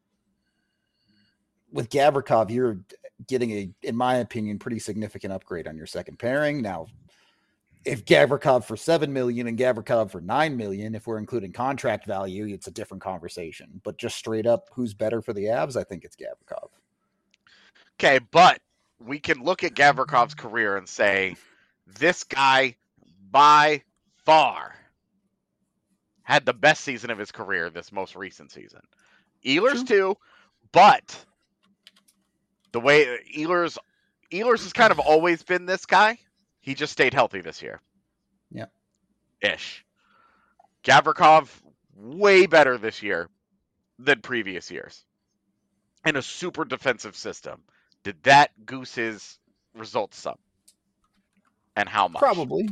With Gavrikov, you're getting a, in my opinion, pretty significant upgrade on your second pairing. Now, if Gavrikov for seven million and Gavrikov for nine million, if we're including contract value, it's a different conversation. But just straight up, who's better for the Avs? I think it's Gavrikov. Okay, but we can look at Gavrikov's career and say this guy by far had the best season of his career this most recent season. Ehlers True. too, but the way Ehlers Ehlers has kind of always been this guy. He just stayed healthy this year. Yeah. Ish. Gavrikov way better this year than previous years. In a super defensive system. Did that goose his results some? And how much? Probably.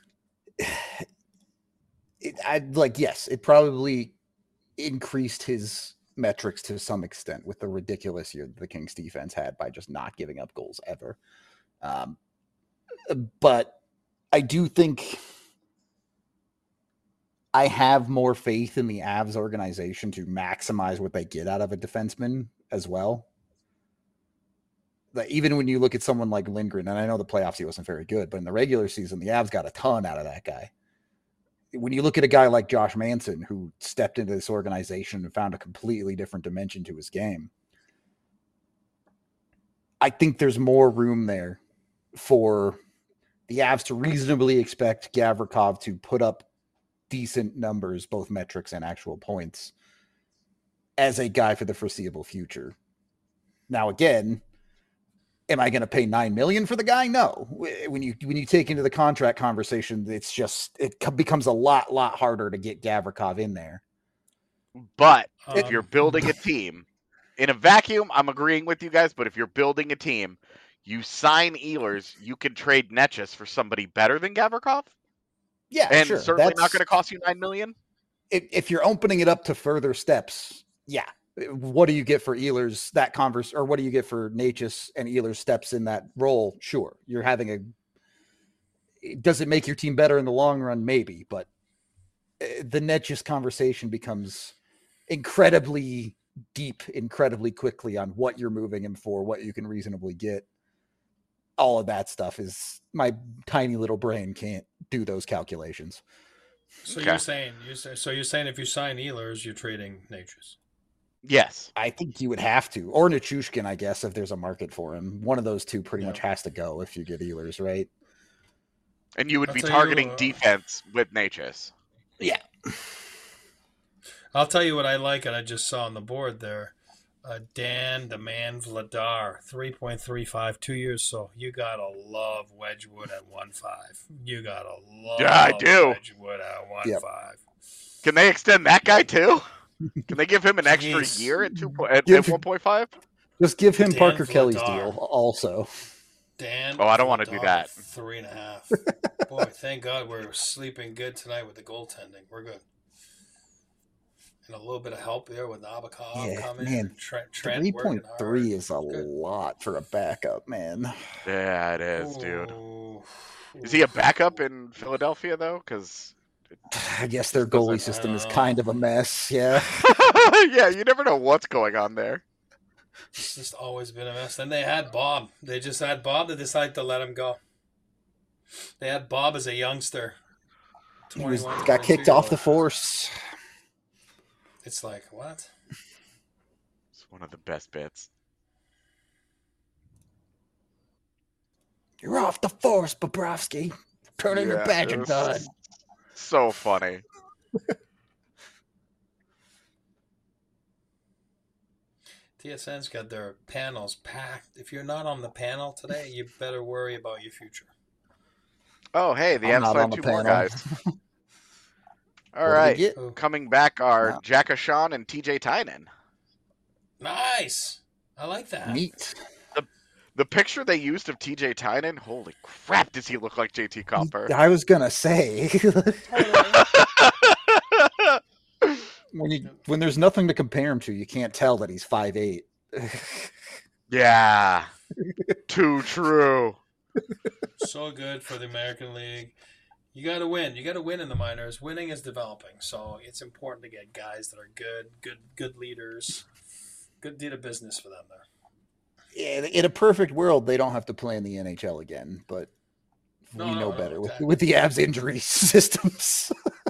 It, I'd like, yes, it probably increased his metrics to some extent with the ridiculous year the Kings defense had by just not giving up goals ever. Um, but I do think I have more faith in the Avs organization to maximize what they get out of a defenseman as well. Like, even when you look at someone like Lindgren, and I know the playoffs he wasn't very good, but in the regular season, the Avs got a ton out of that guy. When you look at a guy like Josh Manson, who stepped into this organization and found a completely different dimension to his game, I think there's more room there for the Avs to reasonably expect Gavrikov to put up decent numbers, both metrics and actual points, as a guy for the foreseeable future. Now, again, Am I going to pay nine million dollars for the guy? No. When you when you take into the contract conversation, it's just it becomes a lot lot harder to get Gavrikov in there. But Um, if you're building a team in a vacuum, I'm agreeing with you guys. But if you're building a team, you sign Ehlers, you can trade Netchus for somebody better than Gavrikov. Yeah, and sure. certainly That's not going to cost you nine million dollars. If, if you're opening it up to further steps, yeah. What do you get for Ehlers that converse, or what do you get for Natchez and Ehlers steps in that role? Sure, you're having a. Does it make your team better in the long run? Maybe, but the Netchez conversation becomes incredibly deep, incredibly quickly on what you're moving him for, what you can reasonably get. All of that stuff is my tiny little brain can't do those calculations. So Okay. you're saying you so you're saying if you sign Ehlers, you're trading Natchez. Yes. I think you would have to. Or Nichushkin, I guess, if there's a market for him. One of those two pretty Yeah. much has to go if you get Ehlers, right? And you would I'll be tell targeting you, uh, defense with Natchez. Yeah. I'll tell you what I like, and I just saw on the board there. Uh, Dan the Man Vladar, three point three five, two years. So you gotta love Wedgwood at one five. You gotta love Yeah, I do. Wedgwood at one Yep. five. Can they extend that guy too? Can they give him an extra Jeez. year at two at, Give- at one point five? Just give him Dan Parker Kelly's Vladar. deal also. Dan. Oh, I don't wanna do Vladar, that. Three and a half. Boy, thank God we're sleeping good tonight with the goaltending. We're good. And a little bit of help there with Nabokov Yeah, coming. man. And Trent, Trent three working point three hard. is a Good. lot for a backup, man. Yeah, it is, dude. Ooh. Is he a backup in Philadelphia though? Because I guess their Just doesn't- goalie system is I don't kind of a mess. Yeah. yeah, you never know what's going on there. It's just always been a mess. Then they had Bob. They just had Bob. They decided to let him go. They had Bob as a youngster. He was, twenty-one, got kicked off the twenty-two-year-old. force. It's like, what? It's one of the best bits. You're off the force, Bobrovsky. Turn in your Yeah, badge it and was done. So funny. T S N's got their panels packed. If you're not on the panel today, you better worry about your future. Oh, hey, the I'm not Avs on signed the two more panel. guys. What All did we right, get? Oh, coming back are No. Jack Ashawn and T J Tynan. nice. I like that. Neat. The picture they used of T J Tynan, holy crap, does he look like J T Comper? I was gonna say Totally. when you when there's nothing to compare him to, you can't tell that he's five eight. Yeah, too true. So good for the American League. You got to win. You got to win in the minors. Winning is developing, so it's important to get guys that are good, good, good leaders. Good deed of business for them there. Yeah, in a perfect world, they don't have to play in the N H L again, but No, we no, know no, better with, exactly. with the Avs injury systems.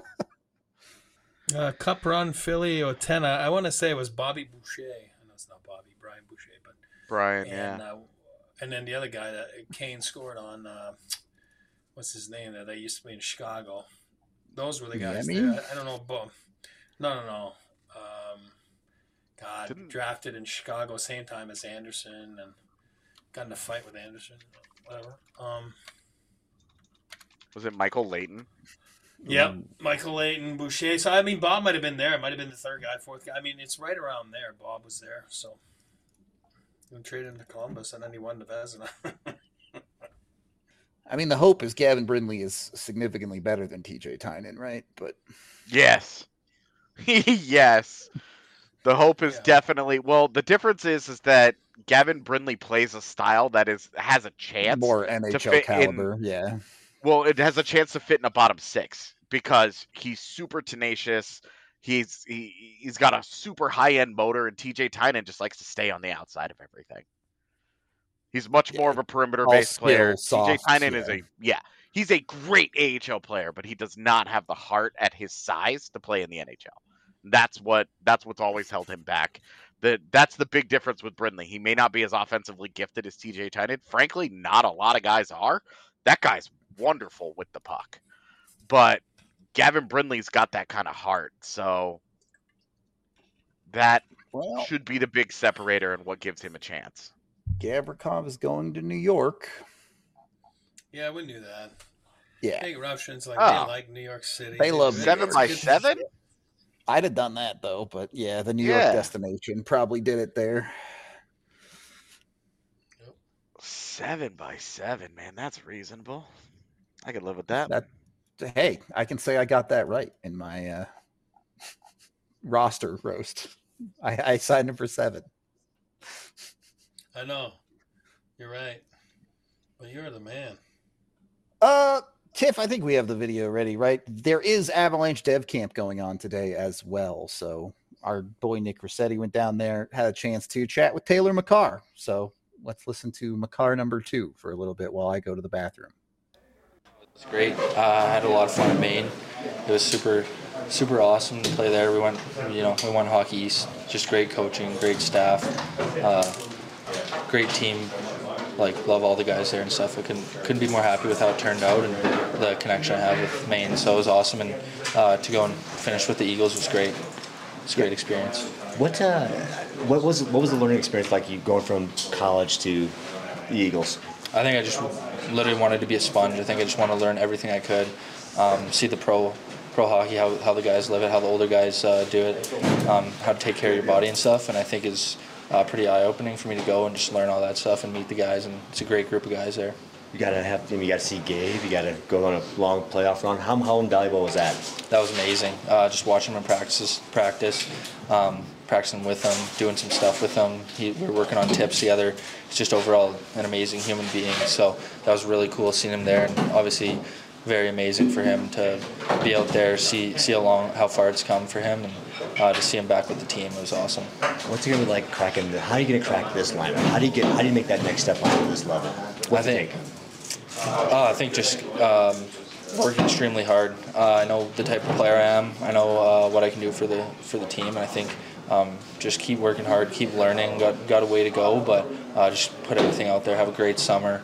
Uh, Cup run, Philly, Otena. I want to say it was Bobby Boucher. I know it's not Bobby, Brian Boucher, but Brian, and yeah. uh, and then the other guy that Kane scored on. Uh, what's his name? That they used to be in Chicago. Those were the guys. Yemi? There. I, I don't know. But no, no, no. Um, God, Didn't- drafted in Chicago same time as Anderson and got in a fight with Anderson. Whatever. Um, Was it Michael Layton? Yep, Michael Layton, Boucher. So I mean, Bob might have been there. It might have been the third guy, fourth guy. I mean, it's right around there. Bob was there, so we traded him to Columbus, and then he won the Vezina. I mean, the hope is Gavin Brindley is significantly better than T J Tynan, right? But Yes. yes. The hope is Yeah. definitely well. The difference is is that Gavin Brindley plays a style that is has a chance. more N H L fit in- caliber, yeah. Well, it has a chance to fit in a bottom six because he's super tenacious. He's he, he's got a super high end motor, and T J Tynan just likes to stay on the outside of everything. He's much more of a perimeter based All player. skill, T J soft, Tynan is yeah. a yeah, he's a great A H L player, but he does not have the heart at his size to play in the N H L. That's what that's what's always held him back. The that's the big difference with Brindley. He may not be as offensively gifted as T J Tynan. Frankly, not a lot of guys are. That guy's wonderful with the puck. But Gavin Brindley's got that kind of heart. So that Well, should be the big separator and what gives him a chance. Gavrikov is going to New York. Yeah, we knew that. Yeah. Big Russians like Oh. they like New York City. They love Seven It's by good- seven? I'd have done that though, but yeah, the New Yeah. York destination probably did it there. Seven by seven, man. That's reasonable. I could live with that. That hey, I can say I got that right in my uh, roster roast. I, I signed him for seven. I know. You're right. But you're the man. Uh, Tiff, I think we have the video ready, right? There is Avalanche Dev Camp going on today as well. So our boy Nick Rossetti went down there, had a chance to chat with Taylor McCarr. So let's listen to McCarr number two for a little bit while I go to the bathroom. It was great. Uh, I had a lot of fun in Maine. It was super, super awesome to play there. We went, you know, we won Hockey East. Just great coaching, great staff, uh, great team. Like, love all the guys there and stuff. I couldn't couldn't be more happy with how it turned out and the connection I have with Maine. So it was awesome, and uh, to go and finish with the Eagles was great. It's a great experience. What uh, what was what was the learning experience like? You going from college to the Eagles? I think I just literally wanted to be a sponge. I think I just want to learn everything I could, um, see the pro pro hockey, how how the guys live it, how the older guys uh, do it, um, how to take care of your body and stuff. And I think is uh, pretty eye opening for me to go and just learn all that stuff and meet the guys. And it's a great group of guys there. You gotta have you gotta see Gabe. You gotta go on a long playoff run. How how invaluable was that? That was amazing. Uh, just watching him in practice, practice, um, practicing with him, doing some stuff with him. He, we were working on tips together. He's just overall an amazing human being. So that was really cool seeing him there, and obviously very amazing for him to be out there, see see how long, how far it's come for him, and uh, to see him back with the team. It was awesome. What's it gonna be like cracking? The, how are you gonna crack this lineup? How do you get? How do you make that next step onto this level? What's I it think. take? Uh, I think just um, working extremely hard. Uh, I know the type of player I am. I know uh, what I can do for the for the team, and I think um, just keep working hard, keep learning. Got got a way to go, but uh, just put everything out there. Have a great summer.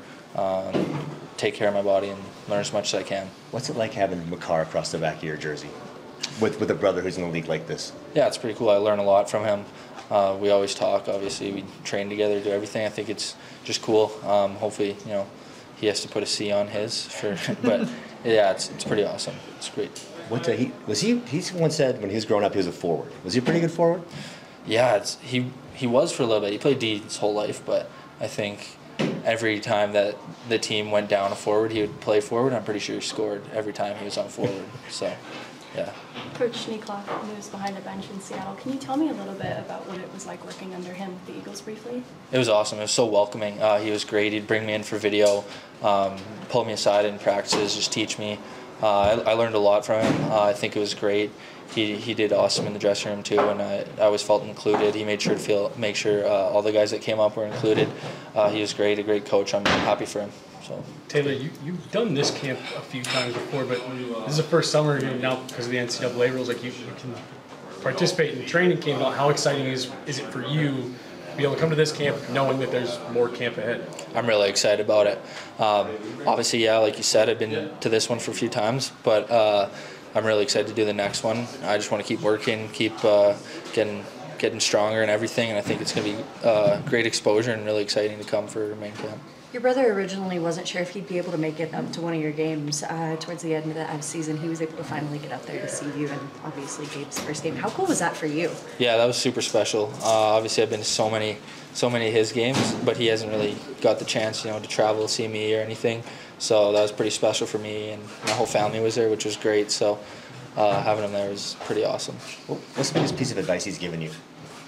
Um, take care of my body and learn as much as I can. What's it like having McCarr across the back of your jersey, with with a brother who's in the league like this? Yeah, it's pretty cool. I learn a lot from him. Uh, we always talk. Obviously, we train together, do everything. I think it's just cool. Um, hopefully, you know. He has to put a C on his, for, but yeah, it's it's pretty awesome. It's great. What uh, he was he? He once said when he was growing up he was a forward. Was he a pretty good forward? Yeah, it's, he he was for a little bit. He played D his whole life, but I think every time that the team went down a forward, he would play forward. I'm pretty sure he scored every time he was on forward. So, yeah. Coach Schneekloff, who was behind the bench in Seattle, can you tell me a little bit about what it was like working under him with the Eagles briefly? It was awesome. It was so welcoming. Uh, he was great. He'd bring me in for video, um, pull me aside in practices, just teach me. Uh, I, I learned a lot from him. Uh, I think it was great. He he did awesome in the dressing room too, and I, I always felt included. He made sure to feel make sure uh, all the guys that came up were included. Uh, he was great, a great coach. I'm happy for him. So. Taylor, you, you've done this camp a few times before, but this is the first summer you know, now because of the N C double A rules. Like you, you can participate in the training camp. How exciting is is it for you to be able to come to this camp knowing that there's more camp ahead? I'm really excited about it. Um, obviously, yeah, like you said, I've been to this one for a few times, but uh, I'm really excited to do the next one. I just want to keep working, keep uh, getting getting stronger and everything, and I think it's going to be uh, great exposure and really exciting to come for main camp. Your brother originally wasn't sure if he'd be able to make it up to one of your games. Uh, towards the end of the season, he was able to finally get up there to see you, and obviously Gabe's first game. How cool was that for you? Yeah, that was super special. Uh, obviously, I've been to so many, so many of his games, but he hasn't really got the chance, you know, to travel, see me or anything. So that was pretty special for me, and my whole family was there, which was great. So uh, having him there was pretty awesome. What's the biggest piece of advice he's given you?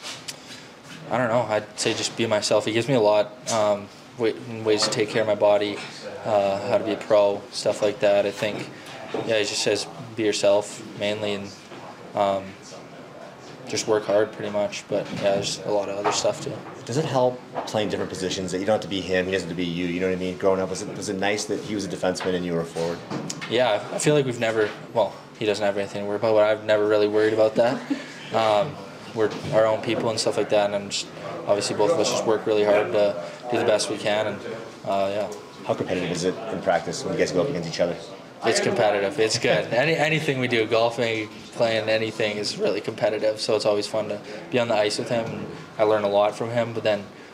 I don't know. I'd say just be myself. He gives me a lot. Um, ways to take care of my body, uh, how to be a pro, stuff like that. I think, yeah, he just says be yourself mainly, and um, just work hard pretty much. But yeah, there's a lot of other stuff too. Does it help playing different positions that you don't have to be him, he doesn't have to be you? You know what I mean? Growing up, was it was it nice that he was a defenseman and you were a forward? Yeah, I feel like we've never. Well, he doesn't have anything to worry about, but I've never really worried about that. Um, we're our own people and stuff like that, and I'm just obviously both of us just work really hard to do the best we can, and uh, yeah. How competitive is it in practice when you guys go up against each other? It's competitive. It's good. Any anything we do, golfing, playing anything, is really competitive. So it's always fun to be on the ice with him. And I learn a lot from him, but then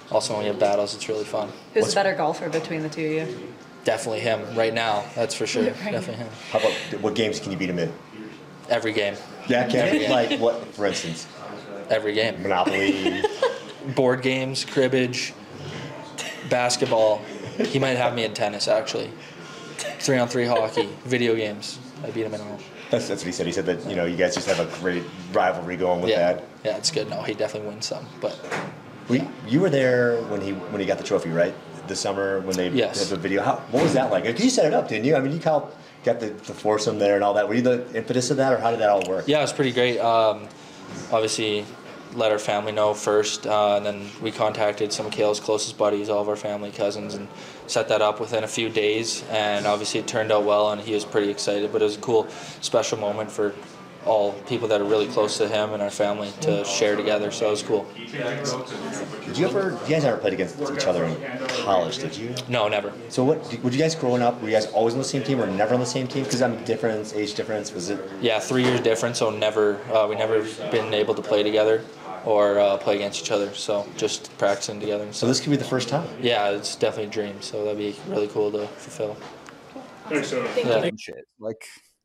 also when we have battles, it's really fun. Who's What's- the better golfer between the two of you? Definitely him right now. That's for sure. Right. Definitely him. How about what games can you beat him in? Every game. Yeah, can Every game. like what, for instance? Every game. Monopoly. Board games, cribbage, basketball. He might have me in tennis actually. Three on three hockey, video games. I beat him in all. That's, that's what he said. He said that, you know, you guys just have a great rivalry going with Yeah, that. yeah, it's good. No, he definitely wins some, but We, you were there when he when he got the trophy, right? This summer when they Yes. had the video. How, what was that like? You set it up, didn't you? I mean, you got got the, the foursome there and all that. Were you the impetus of that, or how did that all work? yeah, it was pretty great. Um, obviously, let our family know first, uh, and then we contacted some of Kale's closest buddies, all of our family, cousins, and set that up within a few days. And obviously, it turned out well, and he was pretty excited. But it was a cool, special moment for all people that are really close to him and our family to share together. So it was cool. Did you ever? You guys never played against each other in college, did you? No, never. So what? Would you guys growing up? Were you guys always on the same team, or never on the same team? Because I mean, difference, age difference. Was it? Yeah, three years different, so never uh, we never been able to play together or uh, play against each other. So just practicing together. And So this could be the first time. yeah, it's definitely a dream. So that'd be really cool to fulfill. Thanks, Soda. Yeah. And shit. Like,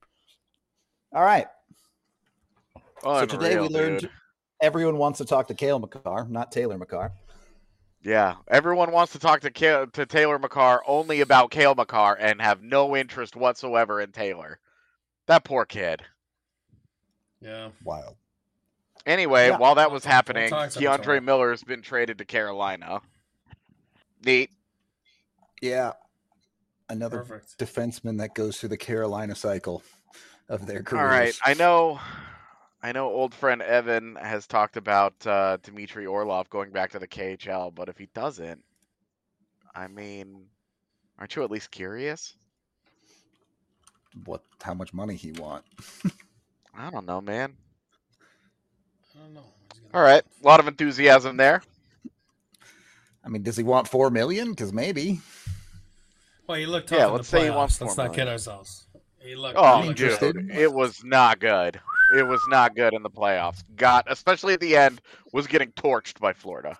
all right. So today we Unreal, learned dude. everyone wants to talk to Kale McCarr, not Taylor McCarr. Yeah, everyone wants to talk to Kale, to Taylor McCarr only about Kale McCarr and have no interest whatsoever in Taylor. That poor kid. Yeah. Wild. Anyway, Yeah. while that was We'll happening, talk sometime. DeAndre Miller's been traded to Carolina. Neat. Yeah. Another Perfect. defenseman that goes through the Carolina cycle of their careers. All right, I know, I know. Old friend Evan has talked about uh, Dmitry Orlov going back to the K H L, but if he doesn't, I mean, aren't you at least curious? What? How much money he want? I don't know, man. I don't know. He's gonna- All right, a lot of enthusiasm there. I mean, does he want four million? Because maybe. Well, he looked tough Yeah, in let's the say he wants playoffs. Let's four not kid million. ourselves. He looked. Oh, he looked dude, interested. it was not good. It was not good in the playoffs. Got, especially at the end, was getting torched by Florida.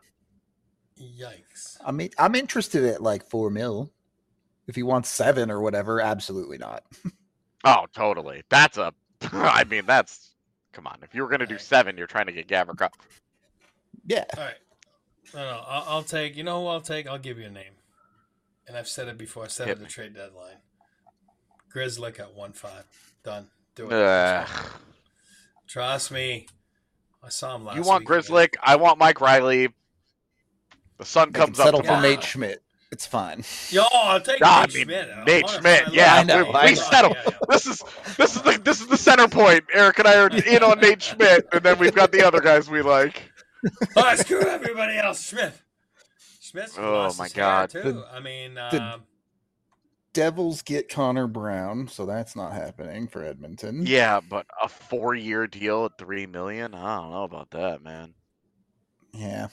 Yikes. I mean, I'm interested at like four mil. If he wants seven or whatever, absolutely not. Oh, totally. That's a. I mean, that's. Come on. If you were gonna do seven, you're trying to get Gavrikov. Yeah. All right. No, no. I'll, I'll take. You know who I'll take? I'll give you a name. And I've said it before. I said it Hit at the me. trade deadline. Grizzlick at one five. Done. Do it. Ugh. Trust me. I saw him last You want week again. Grizzlick? I want Mike Riley. The sun They can comes up settle for tomorrow. Nate Schmidt. It's fine. Yo, I'll take Ah, I Nate mean, Schmidt. I Nate want him. Schmidt, I yeah, I love know, him. we, I we know. settle. Yeah, yeah. This is this is the this is the center point. Eric and I are in on Nate Schmidt, and then we've got the other guys we like. Oh, screw everybody else. Schmidt. Schmidt's Oh, lost my his God. hair, too. The- I mean, the- um, Devils get Connor Brown, so that's not happening for Edmonton. Yeah, but a four-year deal at three million. I don't know about that, man. Yeah.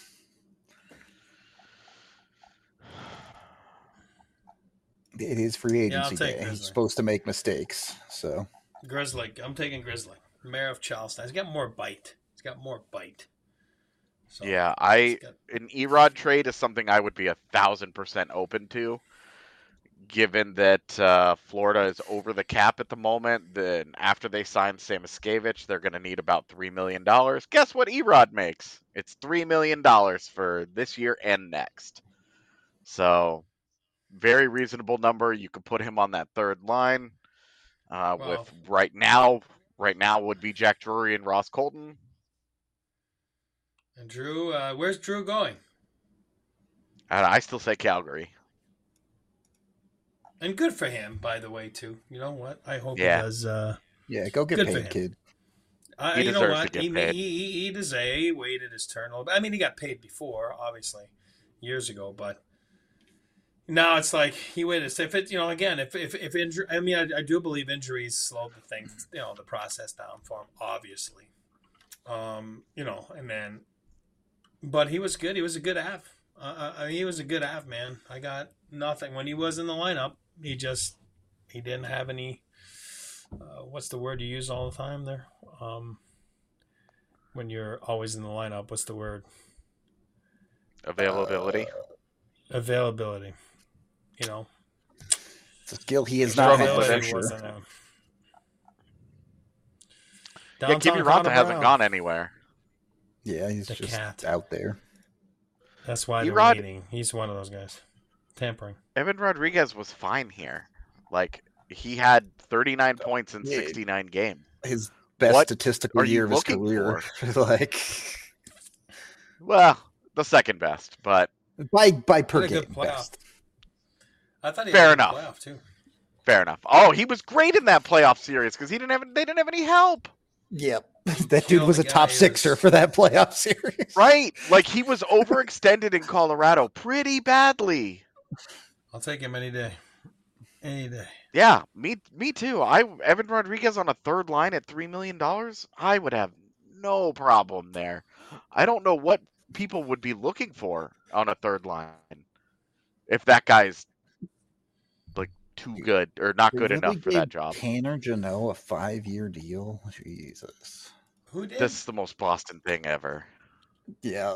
It is free Yeah, I'll agency take day. He's Grizzly. supposed to make mistakes. So Grizzly. I'm taking Grizzly. Mayor of Charleston. He's got more bite. He's got more bite. So, Yeah, I he's got- an Erod trade is something I would be a thousand percent open to, given that uh, Florida is over the cap at the moment. Then after they sign Samoskevich, they're going to need about three million dollars. Guess what Erod makes? It's three million dollars for this year and next. So, very reasonable number. You could put him on that third line. Uh, Well- with right now, right now would be Jack Drury and Ross Colton. And Drew, uh, where's Drew going? And I still say Calgary. And good for him, by the way, too. You know what? I hope Yeah. he does. Uh, yeah, go get Good for paid, him. kid. I, He you know deserves what? to get he, paid. He, he, he deserved. He waited his turn a little bit. I mean, he got paid before, obviously, years ago. But now it's like he waited. If it, you know, again, if if if injury, I mean, I, I do believe injuries slowed the thing, you know, the process down for him, obviously. Um, you know, and then, but he was good. He was a good half. Uh, uh, he was a good half, man. I got nothing when he was in the lineup. He just he didn't have any. Uh, what's the word you use all the time there? Um, when you're always in the lineup, what's the word? Availability. Uh, availability. You know, it's a skill he has not had for sure. Wasn't a... Yeah, Kiviranta hasn't gone anywhere. Yeah, he's the just cat. out there. That's why they're Erod... waiting. He's one of those guys. Tampering. Evan Rodriguez was fine here. Like, he had thirty-nine points in sixty-nine games. His best what statistical year of his career. like, well, the second best, but by by per game best. I thought he Fair had enough. a playoff too. Fair enough. Oh, he was great in that playoff series because he didn't have they didn't have any help. Yep, that dude was a top sixer was... for that playoff series. Right, like he was overextended in Colorado pretty badly. I'll take him any day. Any day. Yeah, me me too. I Evan Rodriguez on a third line at three million dollars. I would have no problem there. I don't know what people would be looking for on a third line if that guy's like too good or not good enough for that job. Tanner Jeannot a five-year deal. Jesus, who did? This is the most Boston thing ever. Yeah,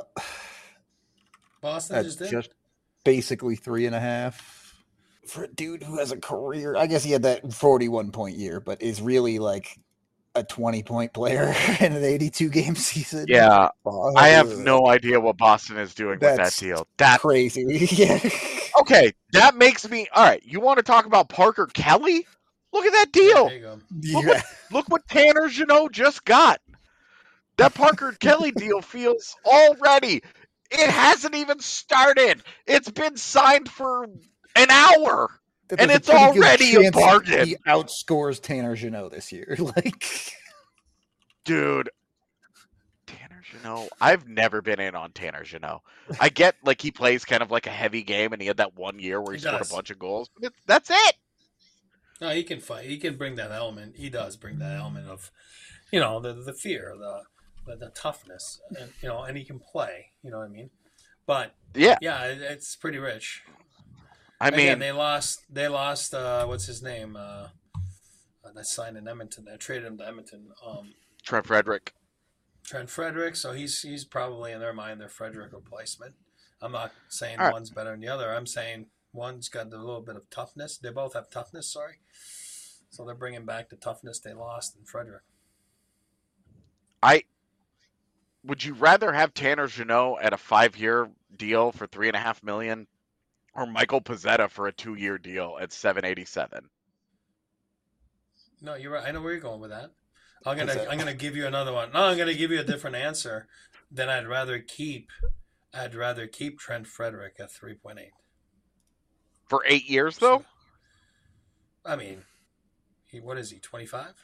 Boston just did. Just basically three and a half. For a dude who has a career, I guess he had that forty-one point year, but is really like a twenty point player in an eighty-two game season. Yeah, oh, I have no idea what Boston is doing with that deal. That's crazy. Yeah. Okay, that makes me all right. You want to talk about Parker Kelly? Look at that deal. Yeah, look, yeah. what, look what Tanner Jeannot just got. That Parker Kelly deal feels already. It hasn't even started. It's been signed for an hour, and it's already a bargain. He outscores Tanner Jeannot this year. Like, dude, Tanner Jeannot. I've never been in on Tanner Jeannot. I get like he plays kind of like a heavy game, and he had that one year where he, he scored does. a bunch of goals. But it, that's it. No, he can fight. He can bring that element. He does bring that element of, you know, the the fear, the the, the toughness, and you know, and he can play. You know what I mean? But yeah, yeah, it, it's pretty rich. I mean, Again, they lost. They lost. Uh, what's his name? Uh, uh, that signed in Edmonton. They traded him to Edmonton. Um, Trent Frederick. Trent Frederick. So he's he's probably in their mind their Frederick replacement. I'm not saying All right. one's better than the other. I'm saying one's got a little bit of toughness. They both have toughness. Sorry. So they're bringing back the toughness they lost in Frederick. I would you rather have Tanner Jeannot at a five-year deal for three and a half million? Or Michael Pezzetta for a two-year deal at seven eighty-seven. No, you're right. I know where you're going with that. I'm gonna I'm gonna give you another one. No, I'm gonna give you a different answer. Then I'd rather keep I'd rather keep Trent Frederick at three point eight. For eight years though? So, I mean, he what is he, twenty-five?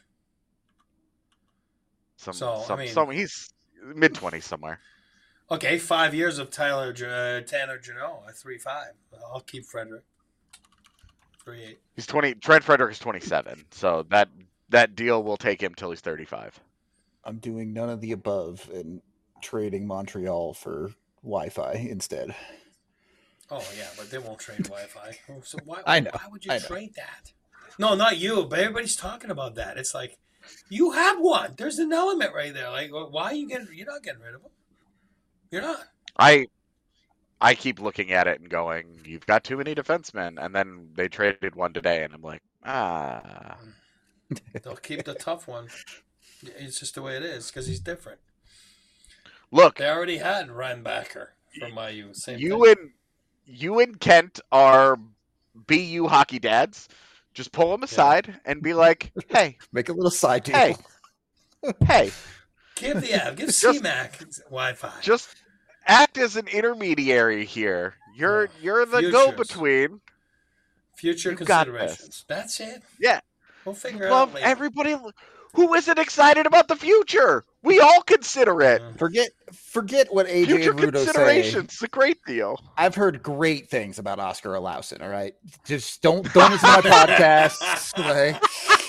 Some, so some, I mean, some he's mid twenties somewhere. Okay, five years of Tyler uh, Tanner Jeannot at three five. I'll keep Frederick. Three eight. He's twenty. Trent Frederick is twenty seven. So that that deal will take him till he's thirty five. I'm doing none of the above and trading Montreal for Wi-Fi instead. Oh yeah, but they won't trade Wi-Fi. So why? I know. Why would you I know. trade that? No, not you. But everybody's talking about that. It's like you have one. There's an element right there. Like why are you getting? You're not getting rid of him. You're not. I I keep looking at it and going, you've got too many defensemen. And then they traded one today, and I'm like, ah. They'll keep the tough one. It's just the way it is because he's different. Look. They already had Reinbacher from I U. Same you thing. and you and Kent are B U hockey dads. Just pull them aside yeah. and be like, hey. Make a little side deal. Hey. Hey. Give the app. Give C MAC Wi-Fi. Just act as an intermediary here. You're yeah. you're the Futures. go-between. Future you considerations. That's it. Yeah. We'll figure Love it out later. Everybody who isn't excited about the future. We all consider it. Yeah. Forget forget what A J Future and Rudo considerations. say. It's a great deal. I've heard great things about Oscar Olausen, all right? Just don't don't listen to my podcasts. Like.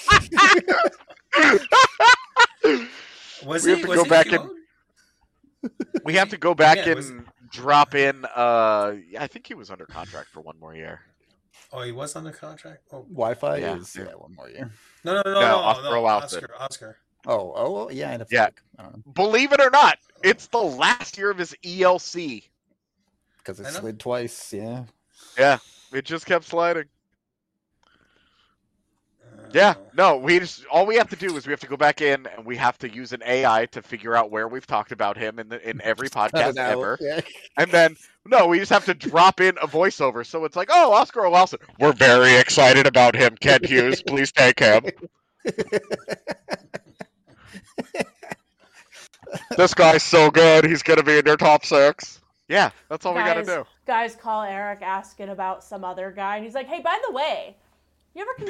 Was we he, have to was go he back and we have to go back yeah, and was... drop in uh I think he was under contract for one more year. Oh, he was under contract? Oh. Wi-Fi yeah. is yeah, one more year. No, no, no, no, no, Oscar, no, Oscar, Oscar. Oh, oh, yeah, I yeah. I don't know. Believe it or not, it's the last year of his E L C. because it slid twice. Yeah. Yeah, it just kept sliding. Yeah, no, we just all we have to do is we have to go back in and we have to use an A I to figure out where we've talked about him in the, in every podcast ever. Yeah. And then no, we just have to drop in a voiceover. So it's like, oh, Oscar Wilson, we're very excited about him. Kent Hughes, please take him. This guy's so good. He's gonna be in your top six. Yeah, that's all guys, we gotta do. Guys call Eric asking about some other guy, and he's like, "Hey, by the way, you ever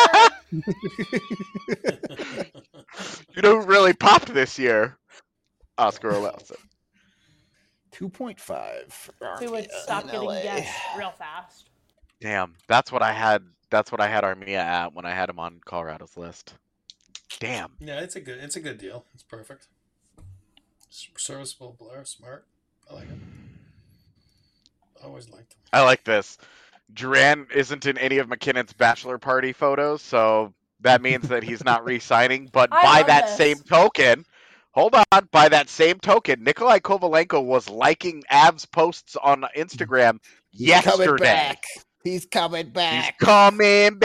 consider?" You know who really popped this year? Oscar Wilson. Two point five. Who would stop getting guessed real fast? Damn, that's what I had. That's what I had Armia at when I had him on Colorado's list. Damn. Yeah, it's a good. It's a good deal. It's perfect. Serviceable player, smart. I like it. I always liked him. I like this. Duran isn't in any of McKinnon's bachelor party photos, so that means that he's not re-signing. But I by love that this. same token, hold on, by that same token, Nikolai Kovalenko was liking Avs posts on Instagram He's yesterday. coming back. He's coming back. He's coming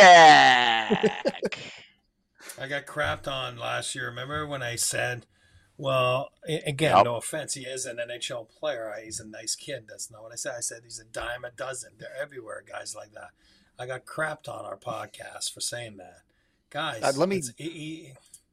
back. I got crapped on last year. Remember when I said, well, again, Yep. no offense, he is an N H L player. He's a nice kid. That's not what I said. I said he's a dime a dozen. They're everywhere, guys like that. I got crapped on our podcast for saying that. Guys, Uh, let me- it's- he-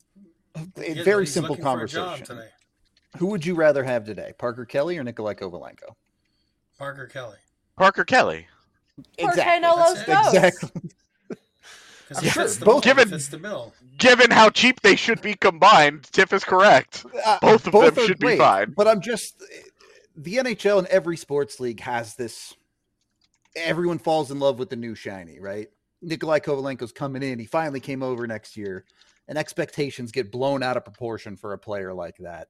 A he- very he's simple looking for a job conversation. today. Who would you rather have today, Parker Kelly or Nikolai Kovalenko? Parker Kelly. Parker Kelly. Porque no los That's it. dos. Exactly. Because I'm he sure fits the both- bill. Given- He fits the bill. Given how cheap they should be combined, Tiff is correct. Uh, Both of them are should be great, fine. But I'm just the N H L and every sports league has this. Everyone falls in love with the new shiny, right? Nikolai Kovalenko's coming in. He finally came over next year, and expectations get blown out of proportion for a player like that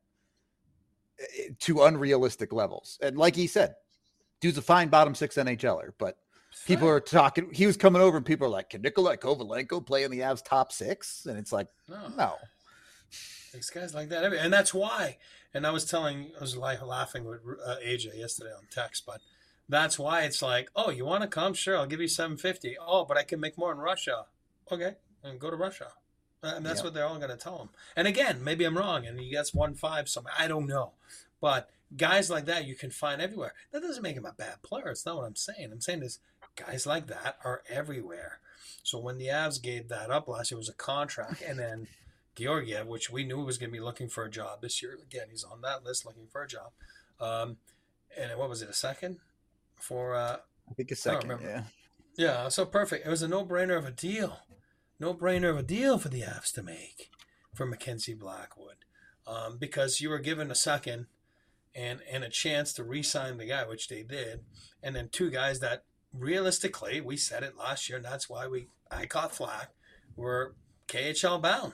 eh, to unrealistic levels. And like he said, dude's a fine bottom six NHLer, but people are talking. He was coming over, and people are like, "Can Nikolai Kovalenko play in the Avs top six?" And it's like, No. no. These guys like that, and that's why. And I was telling, I was like laughing with uh, A J yesterday on text, but that's why it's like, oh, you want to come? Sure, I'll give you seven fifty. Oh, but I can make more in Russia. Okay, and go to Russia. And that's Yeah. what they're all going to tell him. And again, maybe I'm wrong, and he gets one five somewhere. I don't know, but guys like that you can find everywhere. That doesn't make him a bad player. It's not what I'm saying. I'm saying is guys like that are everywhere. So when the Avs gave that up last year, it was a contract, and then Georgiev, which we knew was going to be looking for a job this year. Again, he's on that list looking for a job. Um, and what was it, a second? For uh, I think a I don't second. remember. Yeah. Yeah, so perfect. It was a no-brainer of a deal. No-brainer of a deal for the Avs to make for Mackenzie Blackwood. Um, because you were given a second and, and a chance to re-sign the guy, which they did. And then two guys that realistically, we said it last year, and that's why we I caught flack, were K H L bound.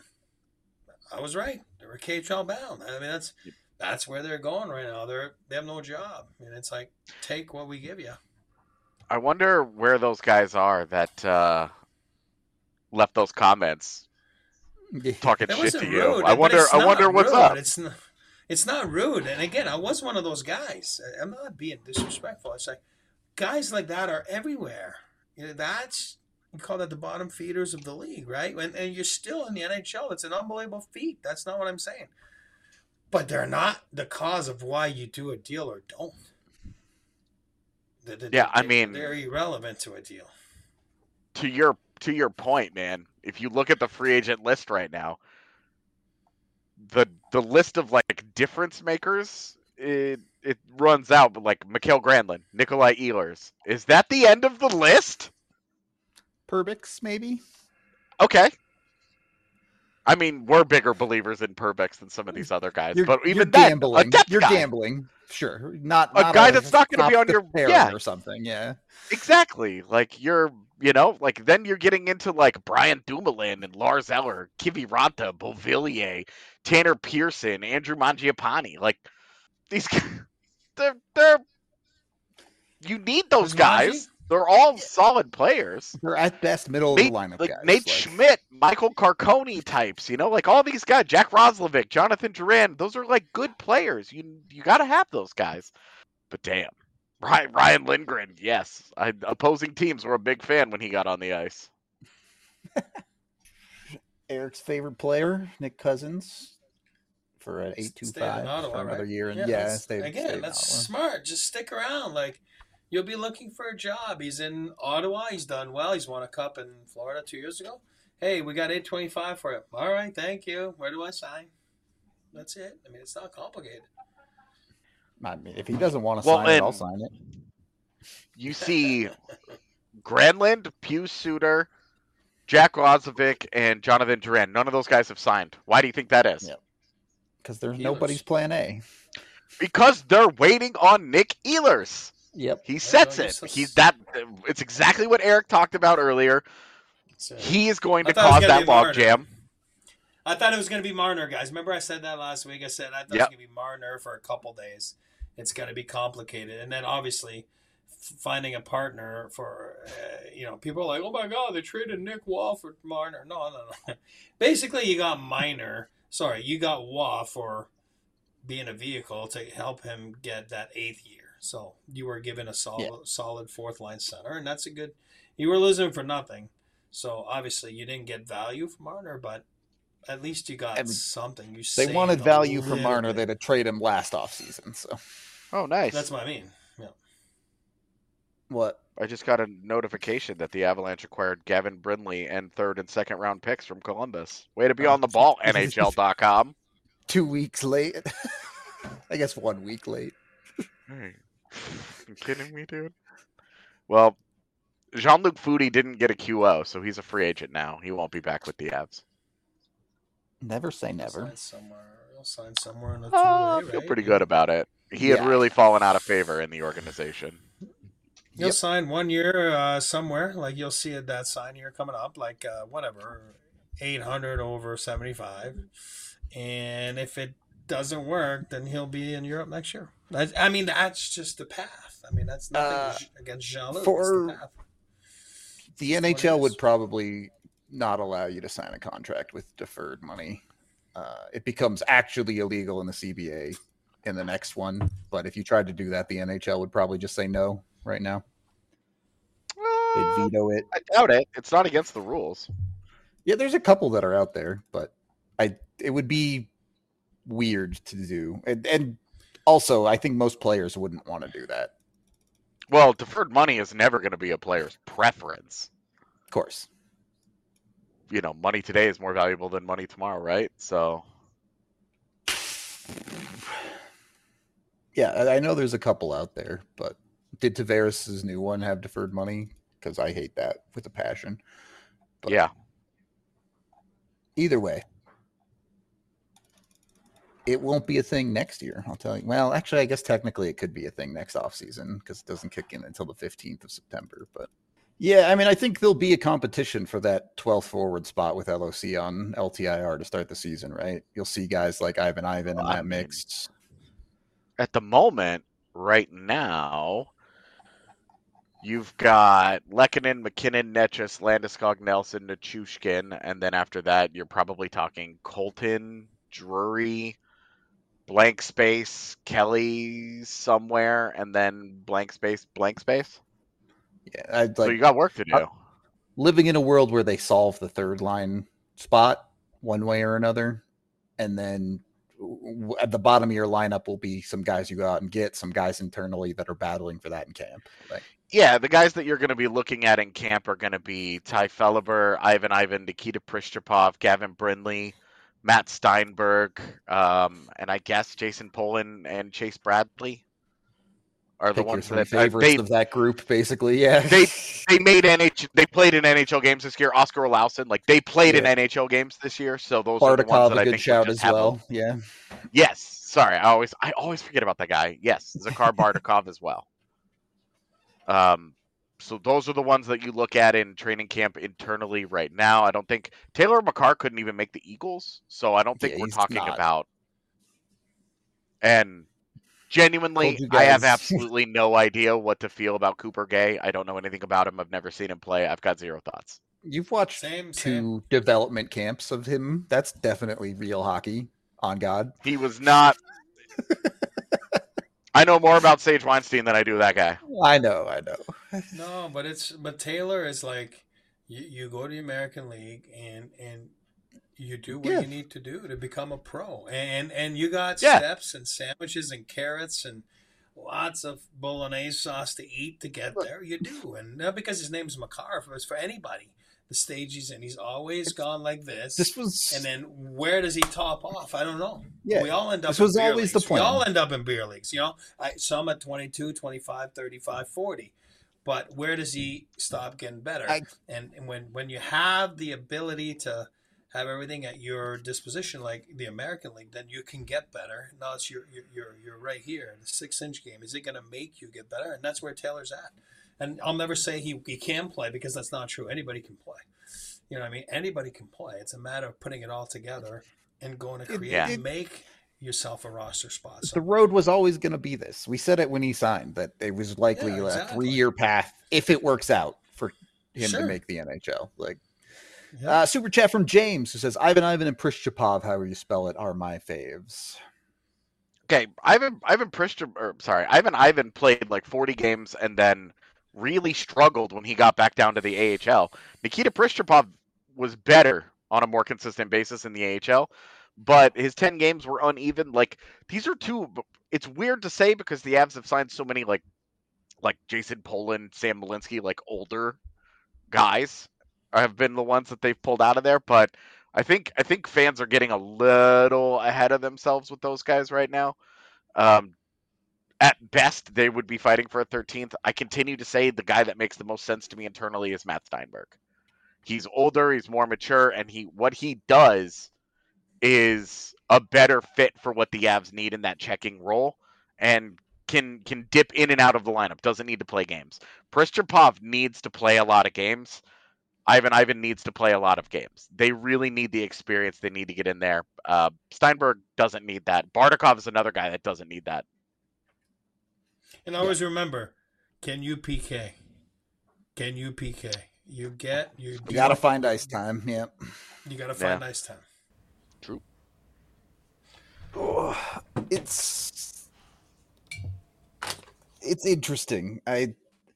I was right. They were K H L bound. I mean, that's that's where they're going right now. They're they have no job, and it's like take what we give you. I wonder where those guys are that uh, left those comments talking That shit wasn't to rude. you. I but wonder. it's I not wonder what's rude. up. It's not. It's not rude. And again, I was one of those guys. I'm not being disrespectful. It's like guys like that are everywhere. You know, that's you call that the bottom feeders of the league, right? And, and you're still in the N H L. It's an unbelievable feat. That's not what I'm saying. But they're not the cause of why you do a deal or don't. The- the- Yeah, I they- mean- they're irrelevant to a deal. To your to your point, man. If you look at the free agent list right now, the the list of like difference makers, it it runs out. But like Mikael Granlund, Nikolai Ehlers, is that the end of the list? Perbix, maybe. Okay. I mean, we're bigger believers in Perbix than some of these other guys, You're, but you're even then, a gambling. depth You're guy. gambling. Sure, not A not guy that's not gonna be top on your- pairing yeah. or something. Yeah, Exactly. Like you're, you know, like then you're getting into like Brian Dumoulin and Lars Eller, Kiviranta, Beauvillier, Tanner Pearson, Andrew Mangiapane. Like these, guys, they're they're. You need those Who's guys. Mangi? They're all solid players. they're at best middle Nate, of the lineup like guys. Nate like- Schmidt, Michael Carcone types, you know, like all these guys, Jack Roslovic, Jonathan Duran, those are like good players. You you got to have those guys. But damn, Ryan, Ryan Lindgren, yes. I, opposing teams were a big fan when he got on the ice. Eric's favorite player, Nick Cousins, for an eight two five Ottawa, for another right? year. And Yeah, yeah, that's, stay, again, stay that's Ottawa. smart. Just stick around. Like, you'll be looking for a job. He's in Ottawa. He's done well. He's won a cup in Florida two years ago. Hey, we got eight twenty-five for you. All right, thank you. Where do I sign? That's it. I mean, it's not complicated. I mean, if he doesn't want to Well, sign it, and I'll sign it. You see Granlund, Pius Suter, Jack Rozovic, and Jonathan Duran. None of those guys have signed. Why do you think that is? Yep. Because there's Ehlers. nobody's plan A. Because they're waiting on Nick Ehlers. Yep. He sets no, it. just- He's that. It's exactly what Eric talked about earlier. So, He is going I to thought it was cause gonna that be Marner. logjam. I thought it was going to be Marner, guys. Remember I said that last week? I said I thought it was Yep. going to be Marner for a couple days. It's going to be complicated. And then, obviously, f- finding a partner for, uh, you know, people are like, oh, my God, they traded Nick Waugh for Marner. No, no, no. Basically, you got Minor. Sorry, you got Waugh for being a vehicle to help him get that eighth year. So you were given a solid, Yeah. solid fourth-line center, and that's a good – you were losing for nothing. So, obviously, you didn't get value from Marner, but at least you got And something. You They saved wanted a value from little Marner. bit. They'd trade him last offseason. So Oh, nice. That's what I mean. Yeah. what? I just got a notification that the Avalanche acquired Gavin Brindley and third and second round picks from Columbus. Way to be Oh. on the ball, N H L dot com. Two weeks late. I guess one week late. Hey, you kidding me, dude? Well, Jean-Luc Foudy didn't get a Q O, so he's a free agent now. He won't be back with the Avs. Never say He'll never. sign somewhere. He'll sign somewhere in the Oh, I two-way, feel right? pretty good about it. He Yeah. had really fallen out of favor in the organization. He'll Yep. sign one year uh, somewhere. Like you'll see it that sign year coming up, like uh, whatever, eight hundred over seventy-five. And if it doesn't work, then he'll be in Europe next year. I, I mean, that's just the path. I mean, that's nothing Uh, against Jean-Luc. for- it's the path. The That's N H L what it would is. probably not allow you to sign a contract with deferred money. Uh, it becomes actually illegal in the C B A in the next one. But if you tried to do that, the N H L would probably just say no right now. They'd Uh, veto it. I doubt it. It's not against the rules. Yeah, there's a couple that are out there, but I it would be weird to do. And, and also, I think most players wouldn't want to do that. Well, deferred money is never going to be a player's preference. Of course. You know, money today is more valuable than money tomorrow, right? So, Yeah, I I know there's a couple out there, but did Tavares' new one have deferred money? Because I hate that with a passion. But yeah. either way, it won't be a thing next year. I'll tell you. Well, actually, I guess technically it could be a thing next offseason because it doesn't kick in until the fifteenth of September. But yeah, I mean, I think there'll be a competition for that twelfth forward spot with L O C on L T I R to start the season, right? You'll see guys like Ivan Ivan in Well, I that mean, mix. At the moment, right now, you've got Lehkonen, McKinnon, Netchus, Landeskog, Nelson, Nichushkin, and then after that, you're probably talking Colton, Drury, blank space, Kelly somewhere, and then blank space, blank space. Yeah, I'd so like you got work to do. uh, living in a world where they solve the third line spot one way or another, and then w- at the bottom of your lineup will be some guys you go out and get, some guys internally that are battling for that in camp. Like, Yeah, the guys that you're going to be looking at in camp are going to be Ty Felliver, Ivan Ivan, Nikita Prishchapov, Gavin Brindley, Matt Steinberg, um, and I guess Jason Poland and Chase Bradley are the pick your ones three that uh, favorites they of that group, basically. Yeah, they they made N H they played in N H L games this year. Oscar Olausen, like they played in Yeah. N H L games this year, so those are the ones Bardakov, that a I good think would shout just as have a- well. Yeah, Yes, sorry, I always I always forget about that guy. Yes, Zakhar Bardakov as well. Um, so those are the ones that you look at in training camp internally right now. I don't think Taylor McCarr couldn't even make the Eagles, so I don't think Yeah, we're he's talking not. about. And genuinely, Told you I have guys. absolutely no idea what to feel about Cooper Gay. I don't know anything about him. I've never seen him play. I've got zero thoughts. you've watched Same, two same. development camps of him. That's definitely real hockey. On God, He was not. I know more about Sage Weinstein than I do that guy. I know, I know. No, but it's but Taylor is like you, you go to the American League and and you do what Yeah, you need to do to become a pro. And and you got Yeah, steps and sandwiches and carrots and lots of bolognese sauce to eat to get look, there. You do. And not because his name's Makar, it's for anybody. The stage he's in, he's always it's, gone like this. this And was then where does he top off? I don't know. yeah, We all end this up in was beer always the leagues. We plan. all end up in beer leagues, you know. I, some at twenty-two, twenty-five, thirty-five, forty. But where does he stop getting better? I And, and when, when you have the ability to have everything at your disposition, like the American League, then you can get better. Now it's you're you're you're right here. The six inch game, is it going to make you get better? And that's where Taylor's at. And I'll never say he, he can play because that's not true. Anybody can play. You know what I mean? Anybody can play. It's a matter of putting it all together and going to it, create yeah. and make yourself a roster spot. the road was always going to be this. We said it when he signed that it was likely Yeah, a exactly. three-year path if it works out for him Sure. to make the N H L. Like Yeah. uh, super chat from James who says Ivan Ivan and Prishchapov, however you spell it, are my faves. Okay, Ivan Ivan Pristin, or sorry, Ivan Ivan played like forty games and then really struggled when he got back down to the A H L. Nikita Pristupov was better on a more consistent basis in the A H L, but his ten games were uneven. Like these are two. It's weird to say because the Avs have signed so many like like Jason Poland, Sam Malinsky, like older guys have been the ones that they've pulled out of there. But I think I think fans are getting a little ahead of themselves with those guys right now. Um, at best, they would be fighting for a thirteenth. I continue to say the guy that makes the most sense to me internally is Matt Steinberg. He's older, he's more mature, and he what he does is a better fit for what the Avs need in that checking role, and can can dip in and out of the lineup. Doesn't need to play games. Pristupov needs to play a lot of games. Ivan Ivan needs to play a lot of games. They really need the experience. They need to get in there. Uh, Steinberg doesn't need that. Bardakov is another guy that doesn't need that. And always yeah. remember, can you P K? Can you P K? You get you. You got to find ice time. Yeah. You got to find yeah. ice time. True. Oh, it's it's interesting. I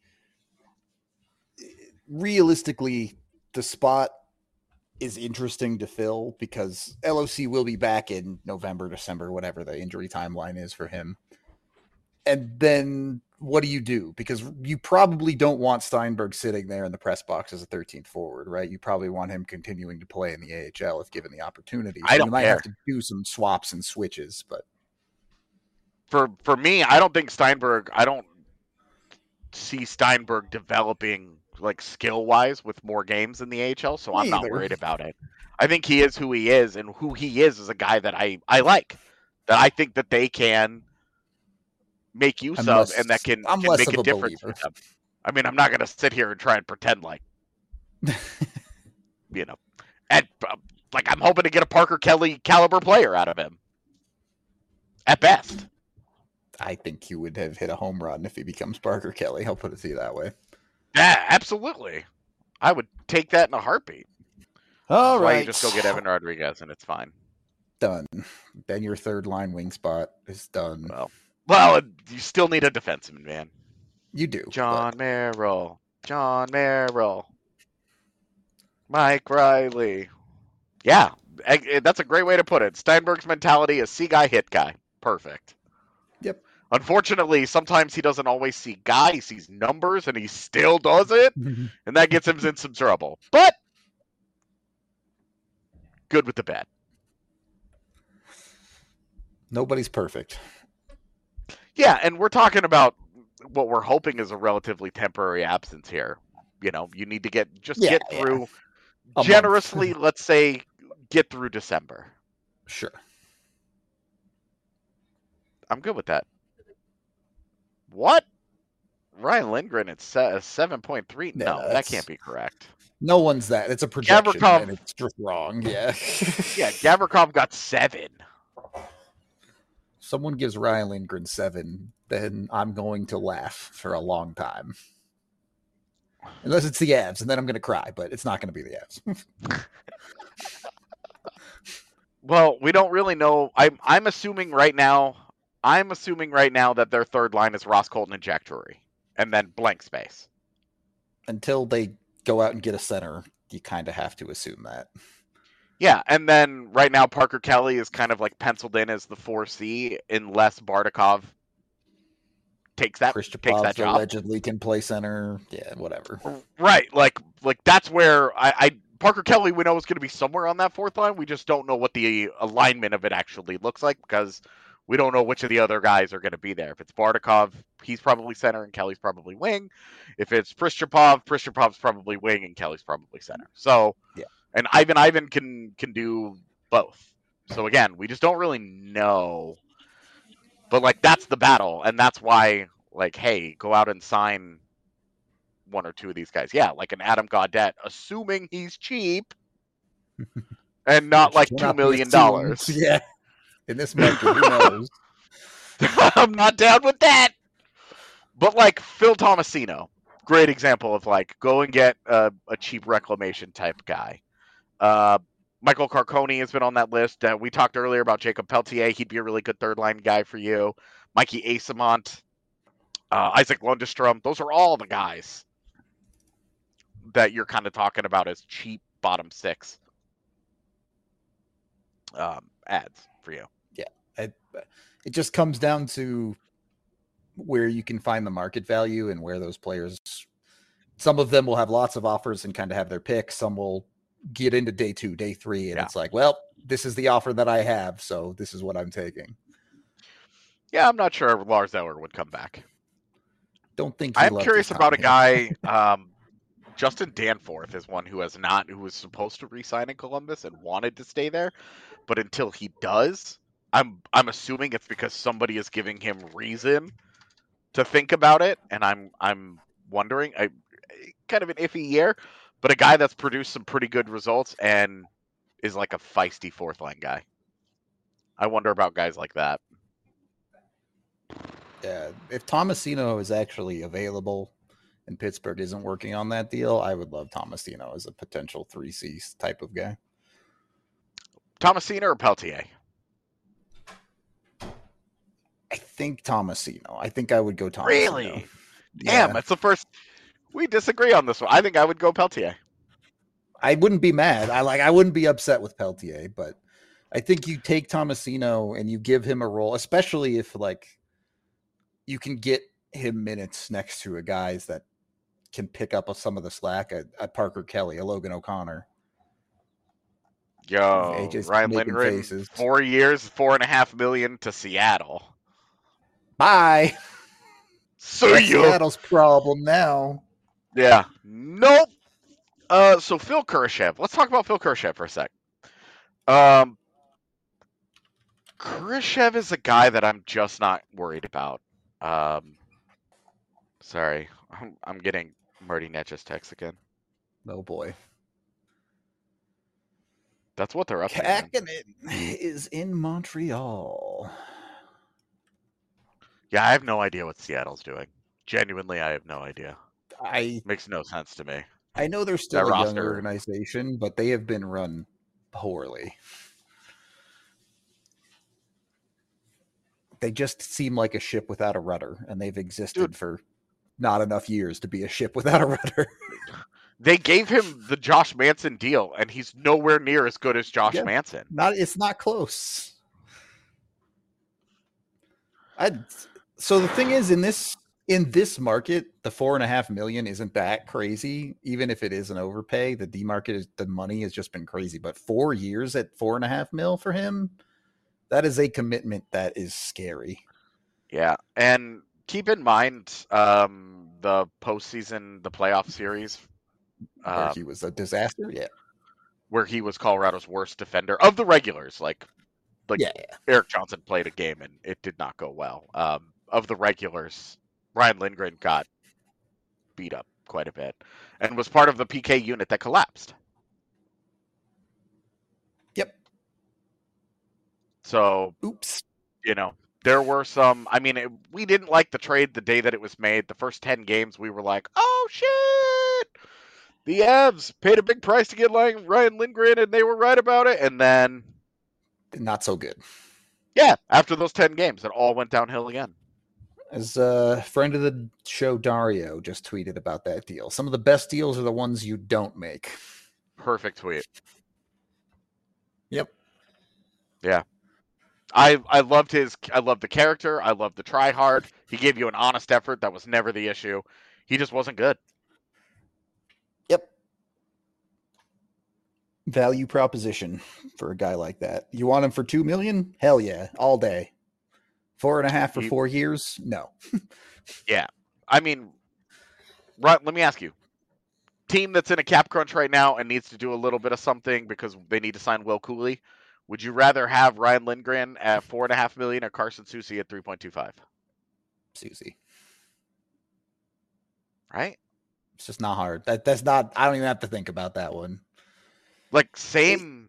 realistically, the spot is interesting to fill because L O C will be back in November, December, whatever the injury timeline is for him. And then what do you do? Because you probably don't want Steinberg sitting there in the press box as a thirteenth forward, right? You probably want him continuing to play in the A H L if given the opportunity. So I don't you might care. have to do some swaps and switches, but for for me, I don't think Steinberg. I don't see Steinberg developing like skill wise with more games in the A H L, so I'm not Neither. worried about it. I think he is who he is, and who he is is a guy that I I like, that I think that they can make use I'm of, less- and that can, I'm can less make of a a difference believer. for them. I mean, I'm not going to sit here and try and pretend like, you know, at uh, like I'm hoping to get a Parker Kelly caliber player out of him. At best, I think he would have hit a home run if he becomes Parker Kelly. I'll put it to you that way. yeah, absolutely. I would take that in a heartbeat. All That's why right. you just go get Evan Rodriguez, and it's fine. Done. Then your third line wing spot is done. Well, well, you still need a defenseman, man. You do. John but- Merrill, John Merrill, Mike Riley. Yeah, eh, that's a great way to put it. Steinberg's mentality is see guy, hit guy. Perfect. Yep. Unfortunately, sometimes he doesn't always see guy. He sees numbers, and he still does it, and that gets him in some trouble. But good with the bad. Nobody's perfect. Yeah, and we're talking about what we're hoping is a relatively temporary absence here. You know, you need to get just Yeah, get yeah. through A month. generously, let's say, get through December. Sure. I'm good with that. What? Ryan Lindgren at se- seven point three? Yeah, No, that that's- can't be correct. No one's that. It's a projection, Gavrikov- and it's just wrong. Yeah. Yeah, Gavrikov got seven. Someone gives Ryan Lindgren seven, then I'm going to laugh for a long time. Unless it's the Avs, and then I'm going to cry, but it's not going to be the Avs. Well, we don't really know. I'm I'm assuming right now I'm assuming right now that their third line is Ross Colton and Jack Drury, and then blank space. Until they go out and get a center, you kind of have to assume that. Yeah, and then right now Parker Kelly is kind of like penciled in as the four C unless Bardakov takes that takes that job. Allegedly can play center. Yeah, whatever. Right, like like that's where I, I Parker Kelly we know is going to be somewhere on that fourth line. We just don't know what the alignment of it actually looks like because we don't know which of the other guys are going to be there. If it's Bardakov, he's probably center and Kelly's probably wing. If it's Pristupov, Pristupov's probably wing and Kelly's probably center. So yeah. And Ivan Ivan can can do both. So again, we just don't really know. But like that's the battle, and that's why like, hey, go out and sign one or two of these guys. Yeah, like an Adam Gaudette, assuming he's cheap and not like two million dollars. Yeah. In this market, who knows? I'm not down with that. But like Phil Tomasino, great example of like go and get a, a cheap reclamation type guy. Uh, Michael Carcone has been on that list. Uh, we talked earlier about Jacob Peltier. He'd be a really good third line guy for you. Mikey Asamont, uh, Isaac Lundestrom. Those are all the guys that you're kind of talking about as cheap bottom six um, ads for you. Yeah. I, it just comes down to where you can find the market value and where those players, some of them will have lots of offers and kind of have their pick. Some will get into day two, day three, and yeah. It's like, well, this is the offer that I have, so this is what I'm taking. Yeah, I'm not sure Lars Eller would come back. Don't think I'm curious about a guy. um, Justin Danforth is one who has not, who was supposed to re-sign in Columbus and wanted to stay there, but until he does, I'm I'm assuming it's because somebody is giving him reason to think about it, and I'm I'm wondering. I kind of an iffy year. But a guy that's produced some pretty good results and is like a feisty fourth line guy. I wonder about guys like that. Yeah, if Tomasino is actually available and Pittsburgh isn't working on that deal, I would love Tomasino as a potential three C type of guy. Tomasino or Peltier? I think Tomasino. I think I would go Tomasino. Really? Yeah. Damn, that's the first... We disagree on this one. I think I would go Peltier. I wouldn't be mad. I like. I wouldn't be upset with Peltier, but I think you take Tomasino and you give him a role, especially if like you can get him minutes next to a guys that can pick up some of the slack at, at Parker Kelly, a Logan O'Connor. Yo, Ryan Lindgren, faces. four years, four and a half million to Seattle. Bye. So you Seattle's problem now. Yeah. Nope. Uh, so Phil Kurashev. Let's talk about Phil Kurashev for a sec. Um, Kurashev is a guy that I'm just not worried about. Um, sorry, I'm, I'm getting Marty Netch's text again. Oh boy. That's what they're up to. Kakinen is in Montreal. Yeah, I have no idea what Seattle's doing. Genuinely, I have no idea. I makes no sense to me. I know they're still that a roster. young organization, but they have been run poorly. They just seem like a ship without a rudder, and they've existed Dude. for not enough years to be a ship without a rudder. They gave him the Josh Manson deal, and he's nowhere near as good as Josh yeah, Manson. Not, it's not close. I so the thing is, in this in this market, the four and a half million isn't that crazy. Even if it is an overpay, the D market is the money has just been crazy. But four years at four and a half mil for him, that is a commitment that is scary. Yeah, and keep in mind um, the postseason, the playoff series. Where um, he was a disaster, yeah. Where he was Colorado's worst defender of the regulars. Like, like yeah, yeah. Eric Johnson played a game and it did not go well. Um, of the regulars, Ryan Lindgren got beat up quite a bit and was part of the P K unit that collapsed. Yep. So, oops. You know, there were some, I mean, it, we didn't like the trade the day that it was made. The first ten games, we were like, oh, shit. The Avs paid a big price to get Ryan Lindgren, and they were right about it. And then... Not so good. Yeah, after those ten games, it all went downhill again. As a friend of the show, Dario, just tweeted about that deal. Some of the best deals are the ones you don't make. Perfect tweet. Yep. Yeah. I I loved his I loved the character. I loved the try hard. He gave you an honest effort. That was never the issue. He just wasn't good. Yep. Value proposition for a guy like that. You want him for two million? Hell yeah, all day. Four and a half for He, four years? No. yeah. I mean, right, let me ask you. Team that's in a cap crunch right now and needs to do a little bit of something because they need to sign Will Cooley. Would you rather have Ryan Lindgren at four and a half million or Carson Soucy at three point two five? Soucy. Right? It's just not hard. That that's not. I don't even have to think about that one. Like same.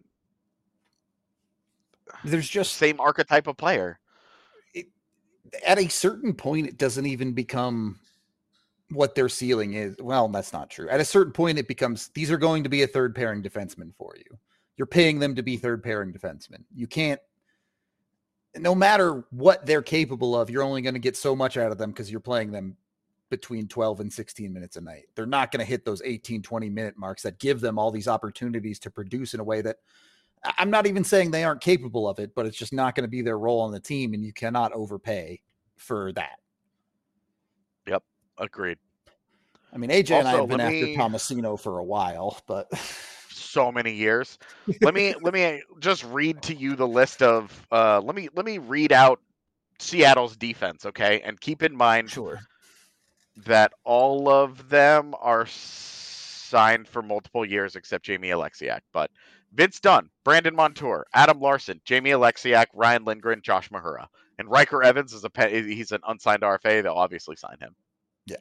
It, there's just same archetype of player. It, at a certain point, it doesn't even become what their ceiling is. Well, that's not true. At a certain point, it becomes these are going to be a third pairing defenseman for you. You're paying them to be third pairing defensemen. You can't, no matter what they're capable of, you're only going to get so much out of them because you're playing them between twelve and sixteen minutes a night. They're not going to hit those eighteen, twenty minute marks that give them all these opportunities to produce in a way that I'm not even saying they aren't capable of it, but it's just not going to be their role on the team. And you cannot overpay for that. Yep. Agreed. I mean, A J also, and I have been me... after Tomasino for a while, but so many years. let me let me just read to you the list of uh let me let me read out Seattle's defense, okay? And keep in mind sure. that all of them are signed for multiple years except Jamie Alexiak. But Vince Dunn, Brandon Montour, Adam Larson, Jamie Alexiak, Ryan Lindgren, Josh Mahura. And Riker Evans is a he's an unsigned R F A. They'll obviously sign him. Yeah.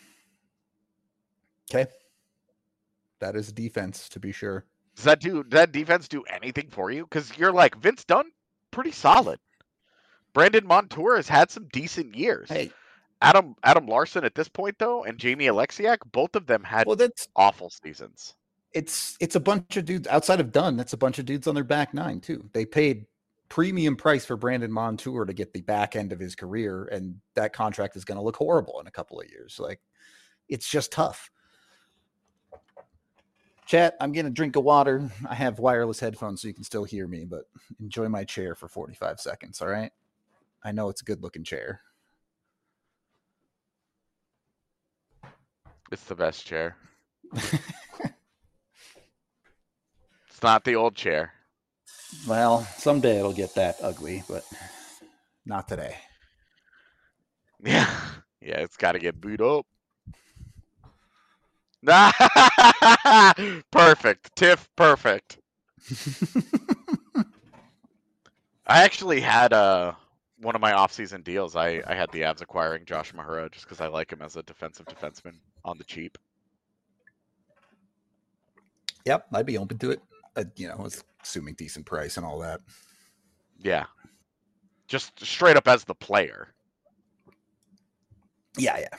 Okay. That is defense, to be sure. Does that do does that defense do anything for you? Because you're like, Vince Dunn, pretty solid. Brandon Montour has had some decent years. Hey. Adam Adam Larson at this point, though, and Jamie Alexiak, both of them had well, that's, awful seasons. It's it's a bunch of dudes outside of Dunn. That's a bunch of dudes on their back nine, too. They paid premium price for Brandon Montour to get the back end of his career, and that contract is going to look horrible in a couple of years. Like, it's just tough. Chat, I'm getting a drink of water. I have wireless headphones so you can still hear me, but enjoy my chair for forty-five seconds, all right? I know it's a good-looking chair. It's the best chair. It's not the old chair. Well, someday it'll get that ugly, but not today. Yeah, yeah, it's got to get booed up. Perfect. Tiff, perfect. I actually had uh, one of my off-season deals. I, I had the Avs acquiring Josh Mahura just because I like him as a defensive defenseman on the cheap. Yep, I'd be open to it. Uh, you know, assuming decent price and all that. Yeah. Just straight up as the player. Yeah, yeah.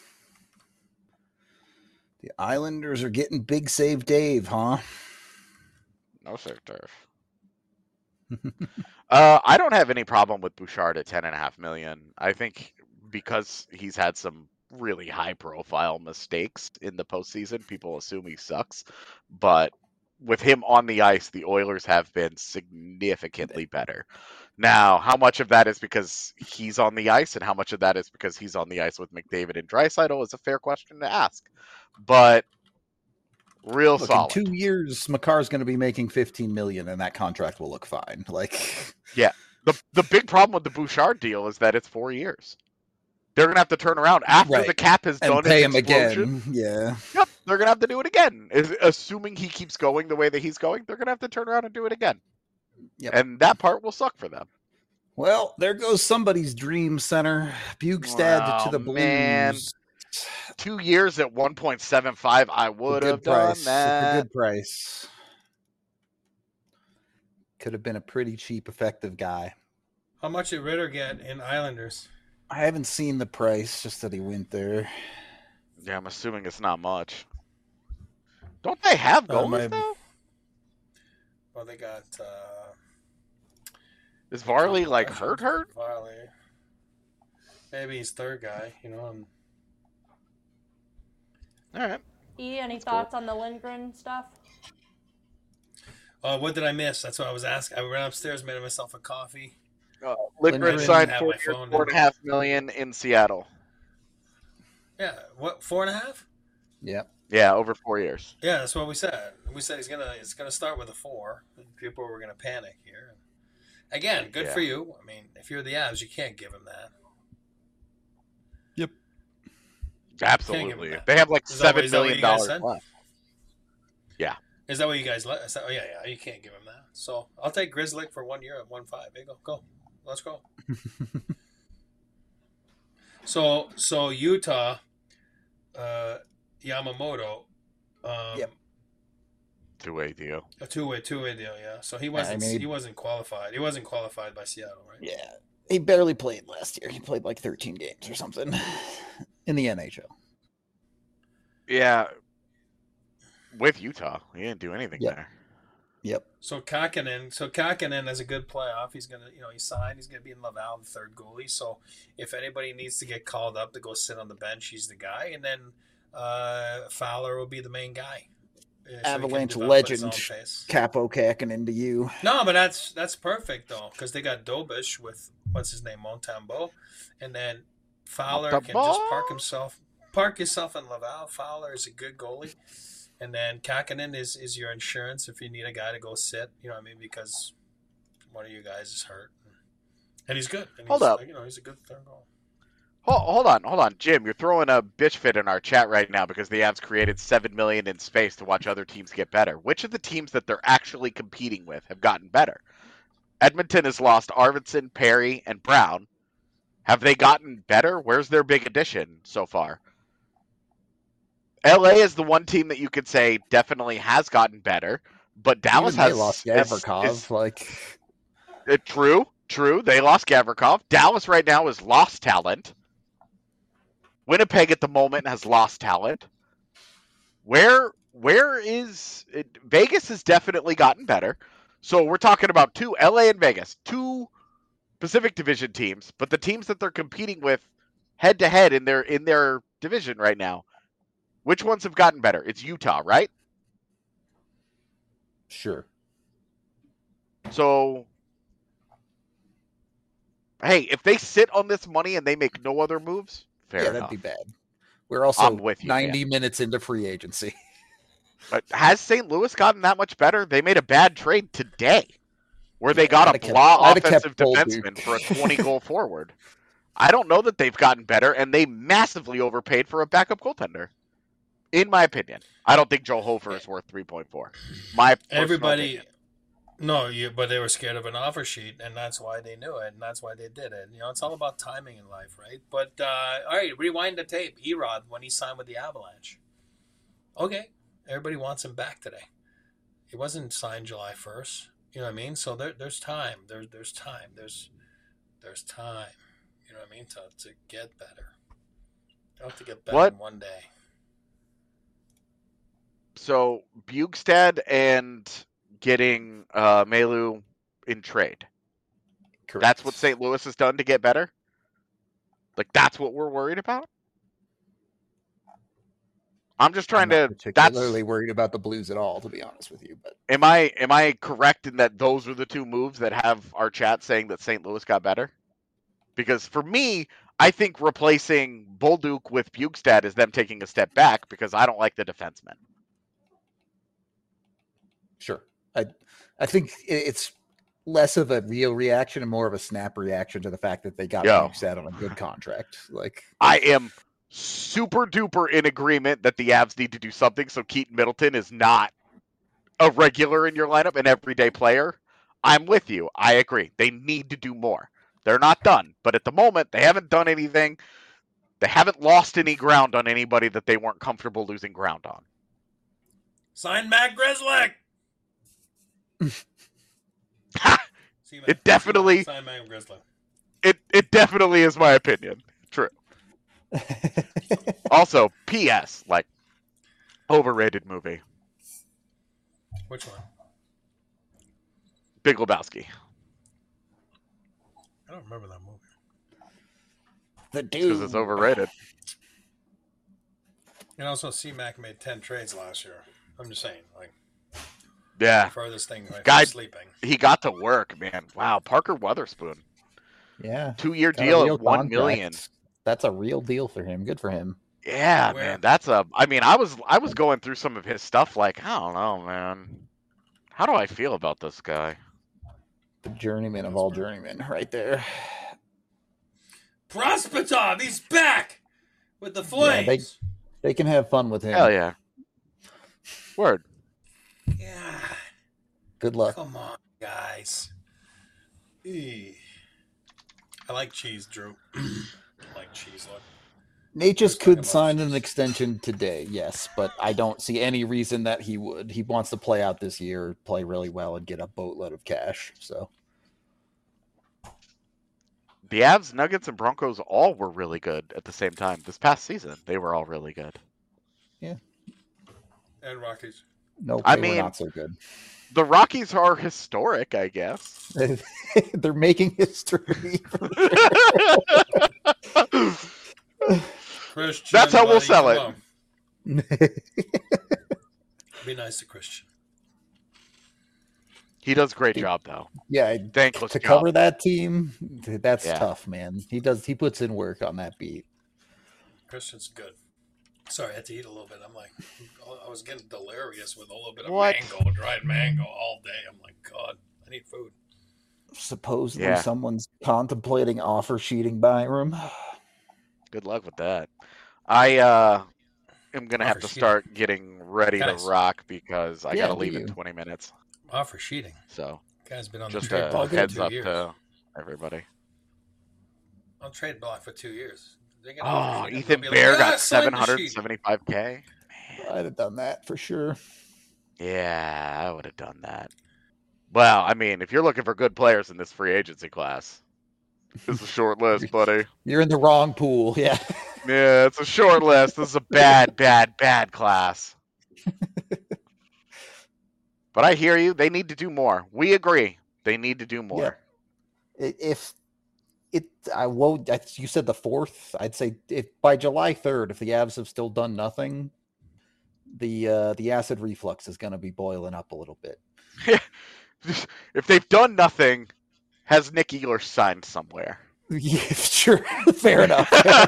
The Islanders are getting Big Save Dave, huh? No, sir, Turf. uh, I don't have any problem with Bouchard at ten and a half million. I think because he's had some really high-profile mistakes in the postseason, people assume he sucks. But with him on the ice, the Oilers have been significantly better. Now, how much of that is because he's on the ice and how much of that is because he's on the ice with McDavid and Draisaitl is a fair question to ask. But real look, solid. In two years, Makar's going to be making fifteen million dollars and that contract will look fine. Like, yeah. The the big problem with the Bouchard deal is that it's four years. They're going to have to turn around after right. the cap has and done pay its him explosion. Again. Yeah. Yep. They're going to have to do it again. Assuming he keeps going the way that he's going, they're going to have to turn around and do it again. Yep. And that part will suck for them. Well, there goes somebody's dream center. Bugstad oh, to the Blues. Man. Two years at one point seven five, I would have done price. that. It's a good price. Could have been a pretty cheap, effective guy. How much did Ritter get in Islanders? I haven't seen the price, just that he went there. Yeah, I'm assuming it's not much. Don't they have goalies, uh, my... though? Well, they got... Uh... Is Varley like hurt? Hurt? Varley. Maybe he's third guy. You know. And... All right. E, any That's thoughts cool. on the Lindgren stuff? Uh, what did I miss? That's what I was asking. I ran upstairs, made myself a coffee. Uh, Lindgren Lindgren signed have four my years, phone, four and a half million in Seattle. Yeah, what four and a half? Yeah. Yeah, over four years. Yeah, that's what we said. We said he's gonna it's gonna start with a four. People were gonna panic here. Again, good Yeah. for you. I mean, if you're the Avs, you can't give him that. Yep. Absolutely. that. They have like Is that what- seven is that what million you guys dollars said? left. Yeah. Is that what you guys let? Oh yeah, yeah. You can't give him that. So I'll take Grizzly for one year at one five. There you go. Go. Let's go. so so Utah, uh, Yamamoto. Um, Yep. Two-way deal. A two-way, two-way deal, yeah. So he wasn't, I mean, he wasn't qualified. He wasn't qualified by Seattle, right? Yeah. He barely played last year. He played like thirteen games or something in the N H L. Yeah. With Utah, he didn't do anything Yep. there. Yep. So Kakinen, so Kakinen has a good playoff. He's gonna, you know, he signed. He's gonna be in Laval, the third goalie. So if anybody needs to get called up to go sit on the bench, he's the guy. And then uh, Fowler will be the main guy. Uh, so he can Avalanche develop at his legend own pace. Capo Kakinen into you. No, but that's that's perfect though, because they got Dobish with what's his name, Montembeau, and then Fowler can Montembeau? just park himself, park yourself in Laval. Fowler is a good goalie, and then Kakinen is is your insurance if you need a guy to go sit. You know what I mean? Because one of you guys is hurt, and he's good. And Hold he's, up. You know, he's a good third goal. Hold, hold on, hold on, Jim. You're throwing a bitch fit in our chat right now because the Avs created seven million in space to watch other teams get better. Which of the teams that they're actually competing with have gotten better? Edmonton has lost Arvidsson, Perry, and Brown. Have they gotten better? Where's their big addition so far? L A is the one team that you could say definitely has gotten better, but Dallas Even they has lost is- Gavrikov. is- like Uh, true, true. They lost Gavrikov. Dallas right now is lost talent. Winnipeg at the moment has lost talent. Where where is it? Vegas has definitely gotten better. So we're talking about two L A and Vegas, two Pacific Division teams, but the teams that they're competing with head to head in their in their division right now, which ones have gotten better? It's Utah, right? sure. So hey, if they sit on this money and they make no other moves, fair yeah, enough. that'd be bad. We're also I'm with you, ninety minutes into free agency. But has Saint Louis gotten that much better? They made a bad trade today, where they Yeah, got I'd a have kept- blah I'd have offensive kept Bolduc. defenseman for a twenty-goal forward. I don't know that they've gotten better, and they massively overpaid for a backup goaltender. In my opinion, I don't think Joe Hofer is worth three point four. My personal Everybody, opinion. no, you, but they were scared of an offer sheet, and that's why they knew it, and that's why they did it. You know, it's all about timing in life, right? But uh, all right, rewind the tape. Erod when he signed with the Avalanche. Okay, everybody wants him back today. He wasn't signed July first. You know what I mean? So there, there's time. There's there's time. There's there's time. You know what I mean? To to get better. You don't have to get better What? in one day. So Bugstad and getting uh, Melu in trade. Correct. That's what Saint Louis has done to get better? Like, that's what we're worried about? I'm just trying I'm not to... That's particularly worried about the Blues at all, to be honest with you. But Am I am I correct in that those are the two moves that have our chat saying that Saint Louis got better? Because for me, I think replacing Bolduc with Bugstad is them taking a step back because I don't like the defenseman. sure, I I think i- it's less of a real reaction and more of a snap reaction to the fact that they got Yo. Bugstad on a good contract. Like I am super duper in agreement that the Avs need to do something so Keaton Middleton is not a regular in your lineup, an everyday player. I'm with you. I agree. They need to do more. They're not done, but at the moment, they haven't done anything. They haven't lost any ground on anybody that they weren't comfortable losing ground on. Sign Matt Grzelcyk. See, Matt. It definitely- Sign Matt Grzelcyk. It it definitely is my opinion. True. Also, P S like overrated movie. Which one? Big Lebowski. I don't remember that movie. The dude. Because it's overrated. And also, C-Mac made ten trades last year. I'm just saying, like, Yeah. the furthest thing right Guy, from sleeping. He got to work, man. Wow, Parker Weatherspoon. Yeah. Two-year Got deal real at one contract. million. That's a real deal for him. Good for him. Yeah, Where? man. That's a. I mean, I was I was going through some of his stuff. Like, I don't know, man. How do I feel about this guy? The journeyman of all journeymen, right there. Prospitov, he's back with the Yeah, Flames. they, they can have fun with him. Hell yeah. Word. Yeah. Good luck. Come on, guys. Eee. I like cheese, Drew. I like cheese. Look. Nate just Just talking could about sign cheese. an extension today, yes, but I don't see any reason that he would. He wants to play out this year, play really well, and get a boatload of cash. So The Avs, Nuggets, and Broncos all were really good at the same time. This past season, they were all really good. And Rockies. no, I they mean- were not so good. The Rockies are historic, I guess. They're making history. Christian, That's how we'll buddy, sell come it. on. Be nice to Christian. He does a great job, though. yeah, Thankless to job. cover that team, that's Yeah. tough, man. He does. He puts in work on that beat. Christian's good. Sorry, I had to eat a little bit. I'm like, I was getting delirious with a little bit of What? mango, dried mango all day. I'm like, God, I need food. Supposedly, Yeah. someone's contemplating offer sheeting Byram. Good luck with that. I uh, am going to have Offer to sheeting. start getting ready Guys. to rock because I Yeah, got to do leave in you? twenty minutes. Offer sheeting. So Guy's been on just the trade a block for heads two up years. to everybody. On trade block for two years. They get Oh, offer sheeting, Ethan they'll be like, Bear "Ah, got sign seven the hundred sheet." seventy-five K. I'd have done that for sure. Yeah, I would have done that. Well, I mean, if you're looking for good players in this free agency class, it's a short list, buddy. You're in the wrong pool. Yeah. Yeah, it's a short list. This is a bad, bad, bad class. But I hear you. They need to do more. We agree. They need to do more. Yeah. I- If it, I won't. I- You said the fourth. I'd say if by July third, if the Avs have still done nothing, the uh, the acid reflux is going to be boiling up a little bit. If they've done nothing, has Nick Ehlers signed somewhere? Yeah, sure, fair enough.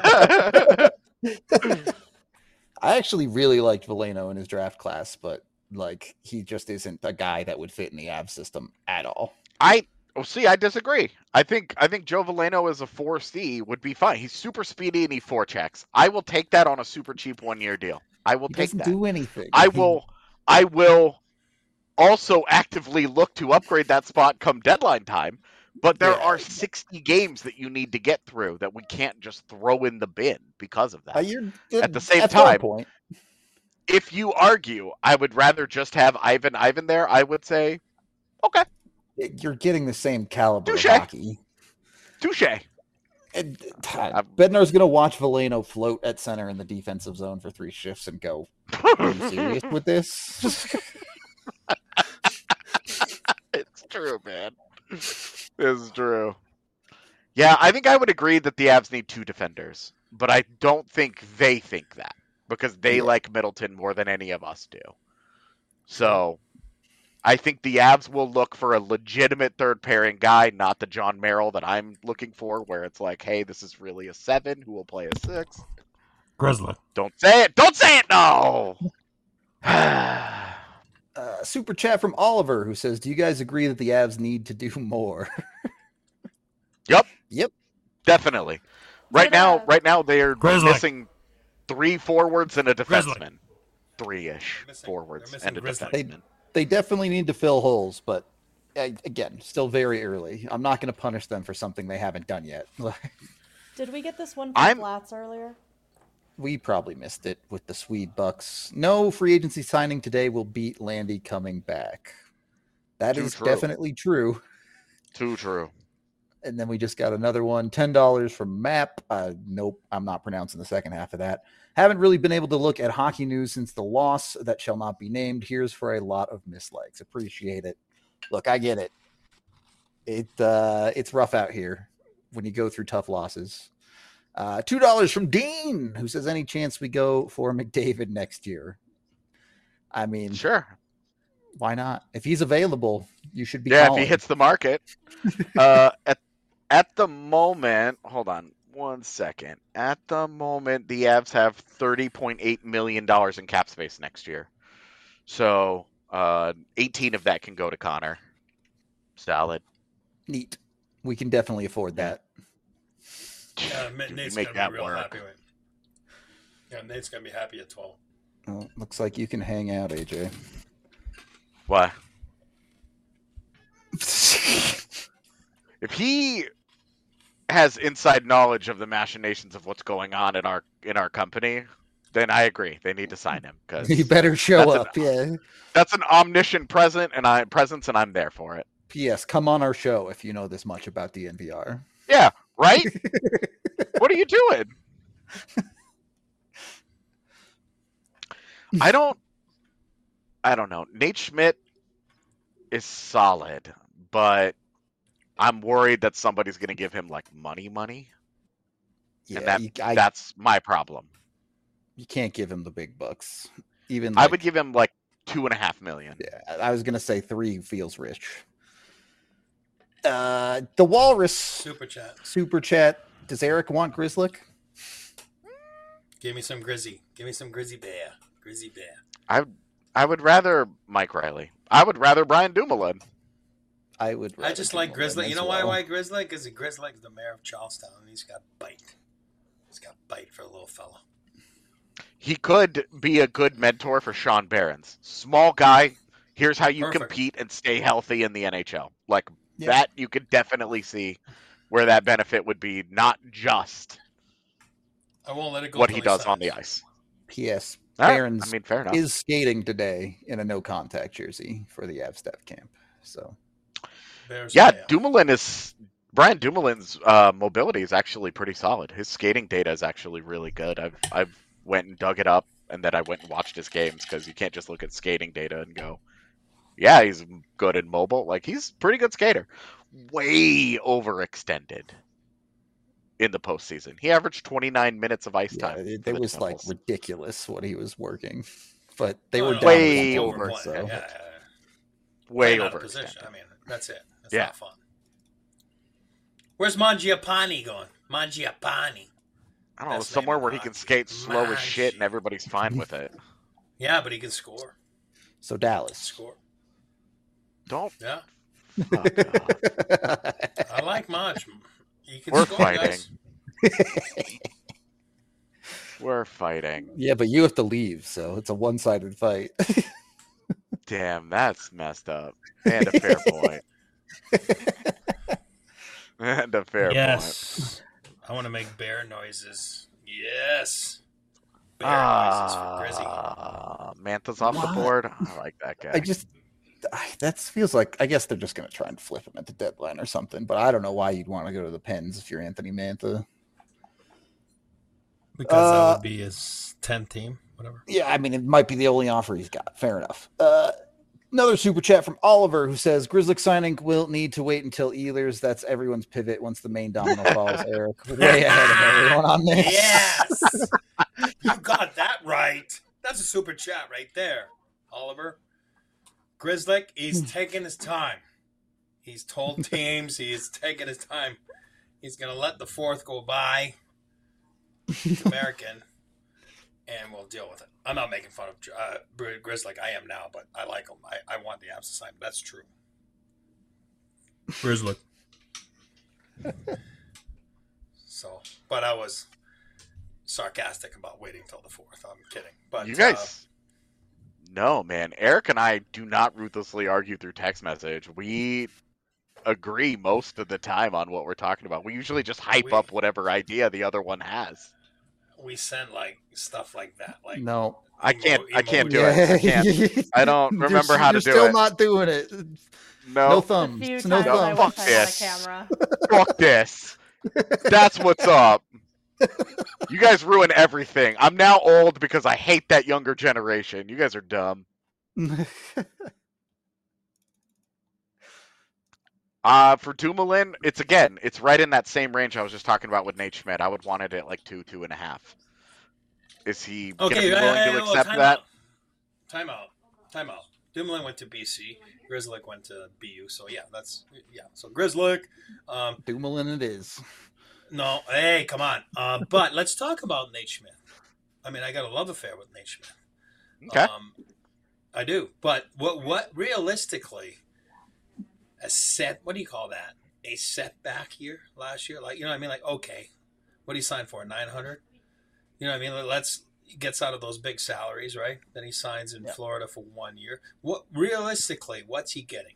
I actually really liked Veleno in his draft class, but like he just isn't a guy that would fit in the Avs system at all. I oh see, I disagree. I think I think Joe Veleno as a four C would be fine. He's super speedy and he four checks. I will take that on a super cheap one year deal. I will He take doesn't that. do anything. I He- will I will also actively look to upgrade that spot come deadline time. But there Yeah. are sixty games that you need to get through that we can't just throw in the bin because of Uh, that. you're, At the same that's fair time, point. If you argue, I would rather just have Ivan Ivan there, I would say, okay, You're getting the same caliber Touche. of hockey. touche. And, uh, Bednar's going to watch Veleno float at center in the defensive zone for three shifts and go, are you serious with this? It's true, man. It's true. Yeah, I think I would agree that the Avs need two defenders, but I don't think they think that because they Yeah. like Middleton more than any of us do. So I think the Avs will look for a legitimate third pairing guy, not the John Merrill that I'm looking for, where it's like, hey, this is really a seven who will play a six. Grizzly. Don't say it. Don't say it. No. Uh, super chat from Oliver who says, do you guys agree that the Avs need to do more? Yep. Yep. Definitely. Right now, right now they are Grizzly. missing three forwards and a Grizzly. defenseman. Three-ish Missing- forwards they're missing and a Grizzly. defenseman. They definitely need to fill holes, but uh, again, still very early. I'm not going to punish them for something they haven't done yet. Did we get this one from I'm- Flats earlier? We probably missed it with the Swede Bucks. No free agency signing today will beat Landy coming back. That Too is true. definitely true. Too true. And then we just got another one, ten dollars from Map. Uh, nope, I'm not pronouncing the second half of that. Haven't really been able to look at hockey news since the loss that shall not be named. Here's for a lot of mislikes. Appreciate it. Look, I get it. It uh, it's rough out here. when you go through tough losses. Uh, two dollars from Dean, who says, any chance we go for McDavid next year? I mean, sure. Why not? If he's available, you should be Yeah, calling. if he hits the market. uh, at, at the moment, hold on one second. At the moment, the Avs have thirty point eight million dollars in cap space next year. So uh, eighteen of that can go to Connor. Solid. Neat. We can definitely afford Yeah. that. Yeah, Dude, Nate's make gonna that be real work. happy with. Yeah, Nate's gonna be happy at twelve. Well, looks like you can hang out, A J. Why? If he has inside knowledge of the machinations of what's going on in our in our company, then I agree. They need to sign him because He better show that's up. an, Yeah. That's an omniscient present and I presence, and I'm there for it. P S. Come on our show if you know this much about D N V R. Yeah, right? What are you doing? I don't I don't know. Nate Schmidt is solid, but I'm worried that somebody's going to give him like money money. Yeah, and that, you, I, that's my problem. You can't give him the big bucks. Even I like, would give him like two and a half million. Yeah, I was going to say three feels rich. Uh, the Walrus Super chat. Super chat. Does Eric want Grizzlick? Give me some Grizzy. Give me some Grizzy Bear. Grizzy Bear. I I would rather Mike Riley. I would rather Brian Dumoulin. I would. I just like Grizzly. You know well. why? Why Grizzly? Because Grizzly's the mayor of Charlestown, and he's got bite. He's got bite for a little fella. He could be a good mentor for Sean Barons. Small guy. Here's how you Perfect. compete and stay healthy in the N H L. Like Yeah. that, you could definitely see where that benefit would be, not just I won't let it go. what till he does signs. on the ice. P S. All right. Barons I mean, fair enough. is skating today in a no contact jersey for the Avstaff camp. So Bears Yeah, mayor. Dumoulin is Brian Dumoulin's uh, mobility is actually pretty solid. His skating data is actually really good. I've I've went and dug it up, and then I went and watched his games because you can't just look at skating data and go, yeah, he's good and mobile. Like he's a pretty good skater. Way overextended in the postseason. He averaged twenty-nine minutes of ice yeah, time. it, for it the was like Devils. ridiculous what he was working, but they No, were no, down way one over, goal, overplaying. So Yeah, yeah, yeah. way Playing out of overextended. position. I mean, that's it. That's Yeah. not fun. Where's Mangiapane going? Mangiapane. I don't know, Best somewhere name in where he can hockey. skate slow as shit and Mangi. everybody's fine with it. Yeah, but he can score. so Dallas. Score. Don't. Yeah, Fuck off. I like Manj. He can We're score, fighting. guys. We're fighting. Yeah, but you have to leave, so it's a one sided fight. Damn, that's messed up. And a fair point. And a fair point. Yes. I want to make bear noises. Yes. Bear noises for Grizzy. Ah, Mantha's off What? the board. I like that guy. I just I, that feels like I guess they're just going to try and flip him at the deadline or something. But I don't know why you'd want to go to the Pens if you're Anthony Mantha. Because Uh, that would be his tenth team, whatever. Yeah, I mean it might be the only offer he's got. Fair enough. Uh, another super chat from Oliver who says Grizzlick signing will need to wait until Ehlers. That's everyone's pivot once the main domino falls. Eric, way ahead of everyone on this. Yes. You got that right. That's a super chat right there, Oliver. Grizzlick, he's taking his time. He's told teams he's taking his time. He's going to let the fourth go by. It's American. And we'll deal with it. I'm not making fun of uh, Grizzlick. I am now, but I like him. I, I want the Avs to sign him. That's true. Grizzlick. So, but I was sarcastic about waiting till the fourth. I'm kidding. But You uh, guys no, man. Eric and I do not ruthlessly argue through text message. We agree most of the time on what we're talking about. We usually just hype We- up whatever idea the other one has. we send like stuff like that. Like No. I emo- can't. I can't do emojis. it. I can't. I don't You're- remember how to you're do still it. not doing it. No, No A thumbs. few No times I thumbs. Fuck wish I had a this. camera. fuck this. That's what's up. You guys ruin everything. I'm now old because I hate that younger generation. You guys are dumb. Uh, for Dumoulin, it's again, it's right in that same range I was just talking about with Nate Schmidt. I would want it at like two, two and a half. Is he going to Okay, be I, willing I, to well, accept time that? out. Time out. Time out. Dumoulin went to B C. Grizzlick went to B U. So yeah, that's yeah. So Grizzlick. Um, Dumoulin it is. no, hey, come on. Uh, but let's talk about Nate Schmidt. I mean, I got a love affair with Nate Schmidt. Okay. Um, I do. But what what realistically a set? What do you call that? A setback year last year? Like you know, what I mean, like okay, what did he sign for? Nine hundred. You know, what I mean, let's. He gets out of those big salaries, right? Then he signs in yeah. Florida for one year. What realistically, what's he getting?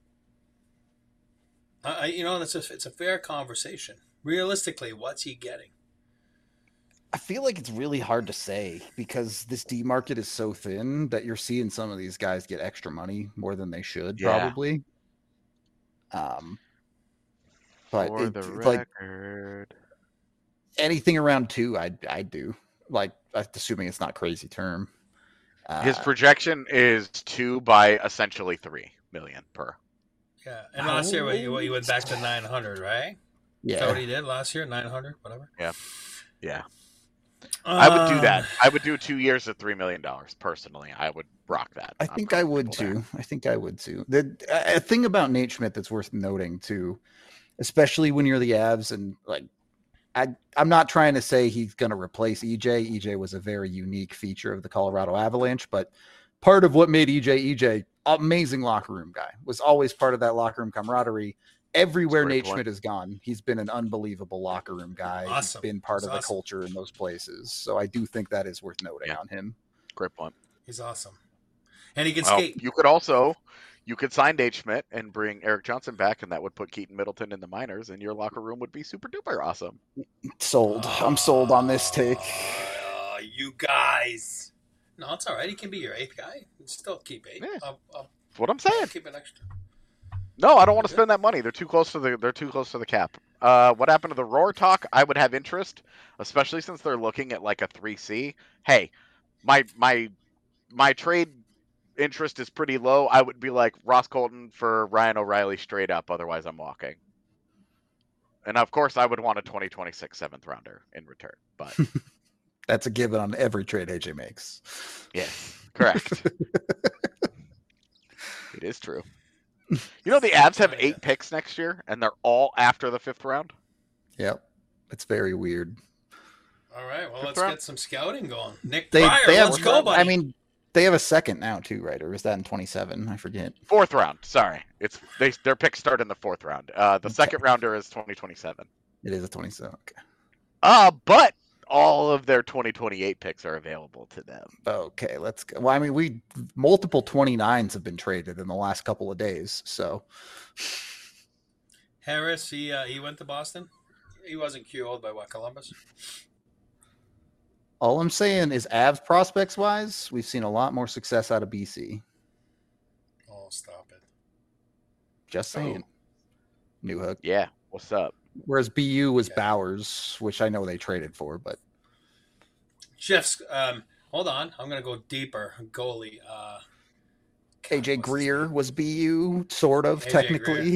I, you know, it's a, it's a fair conversation. Realistically, what's he getting? I feel like it's really hard to say because this D market is so thin that you're seeing some of these guys get extra money more than they should, yeah. probably. Um, but for it, the like record, anything around two, I I do. Like, assuming it's not crazy term. Uh, His projection is two by essentially three million per. Yeah, and last year you, you went back to nine hundred, right? Yeah, is that what he did last year? Nine hundred, whatever. Yeah, yeah. Um, I would do that. I would do two years at three million dollars personally. I would rock that. I think I would too. There. I think I would too. The a thing about Nate Schmidt that's worth noting too, especially when you're the Avs and like. I, I'm not trying to say he's going to replace E J. E J was a very unique feature of the Colorado Avalanche, but part of what made E J E J amazing locker room guy was always part of that locker room camaraderie. Everywhere Nate point. Schmidt has gone, he's been an unbelievable locker room guy. Awesome. He's been part he's of the awesome. culture in those places. So I do think that is worth noting yeah. on him. Great point. He's awesome. And he can well, skate. You could also... You could sign Nate Schmidt and bring Eric Johnson back, and that would put Keaton Middleton in the minors, and your locker room would be super duper awesome. Sold. Uh, I'm sold on this take. Uh, you guys. No, it's all right. He can be your eighth guy. Still keep eight. Yeah. I'll, I'll, That's what I'm saying. I'll keep an extra. No, I don't want to spend that money. They're too close to the. They're too close to the cap. Uh, what happened to the Roar talk? I would have interest, especially since they're looking at like a three C. Hey, my my my trade. interest is pretty low. I would be like Ross Colton for Ryan O'Reilly straight up. Otherwise, I'm walking. And of course, I would want a twenty twenty-six seventh rounder in return. But that's a given on every trade A J makes. Yes, correct. It is true. You know, the Avs have eight picks next year, and they're all after the fifth round. Yep, it's very weird. All right, well, fifth let's round? get some scouting going. Nick they, Pryor, they have, let's go, buddy. I mean. They have a second now too, right? Or is that in twenty-seven? I forget. Fourth round. Sorry, it's they their picks start in the fourth round. Uh, the okay. second rounder is twenty twenty-seven. It is a twenty-seven. Okay. Uh, but all of their twenty twenty-eight picks are available to them. Okay, let's go. Well, I mean, we multiple twenty-nines have been traded in the last couple of days. So Harris, he uh, he went to Boston. He wasn't Q O'd by what, Columbus? All I'm saying is Avs prospects wise, we've seen a lot more success out of B C. Oh, stop it. Just saying. Oh. Newhook. Yeah. What's up? Whereas B U was yeah. Bowers, which I know they traded for, but Jeff's um hold on. I'm gonna go deeper. Goalie. Uh A J Greer was B U, sort of, A J technically.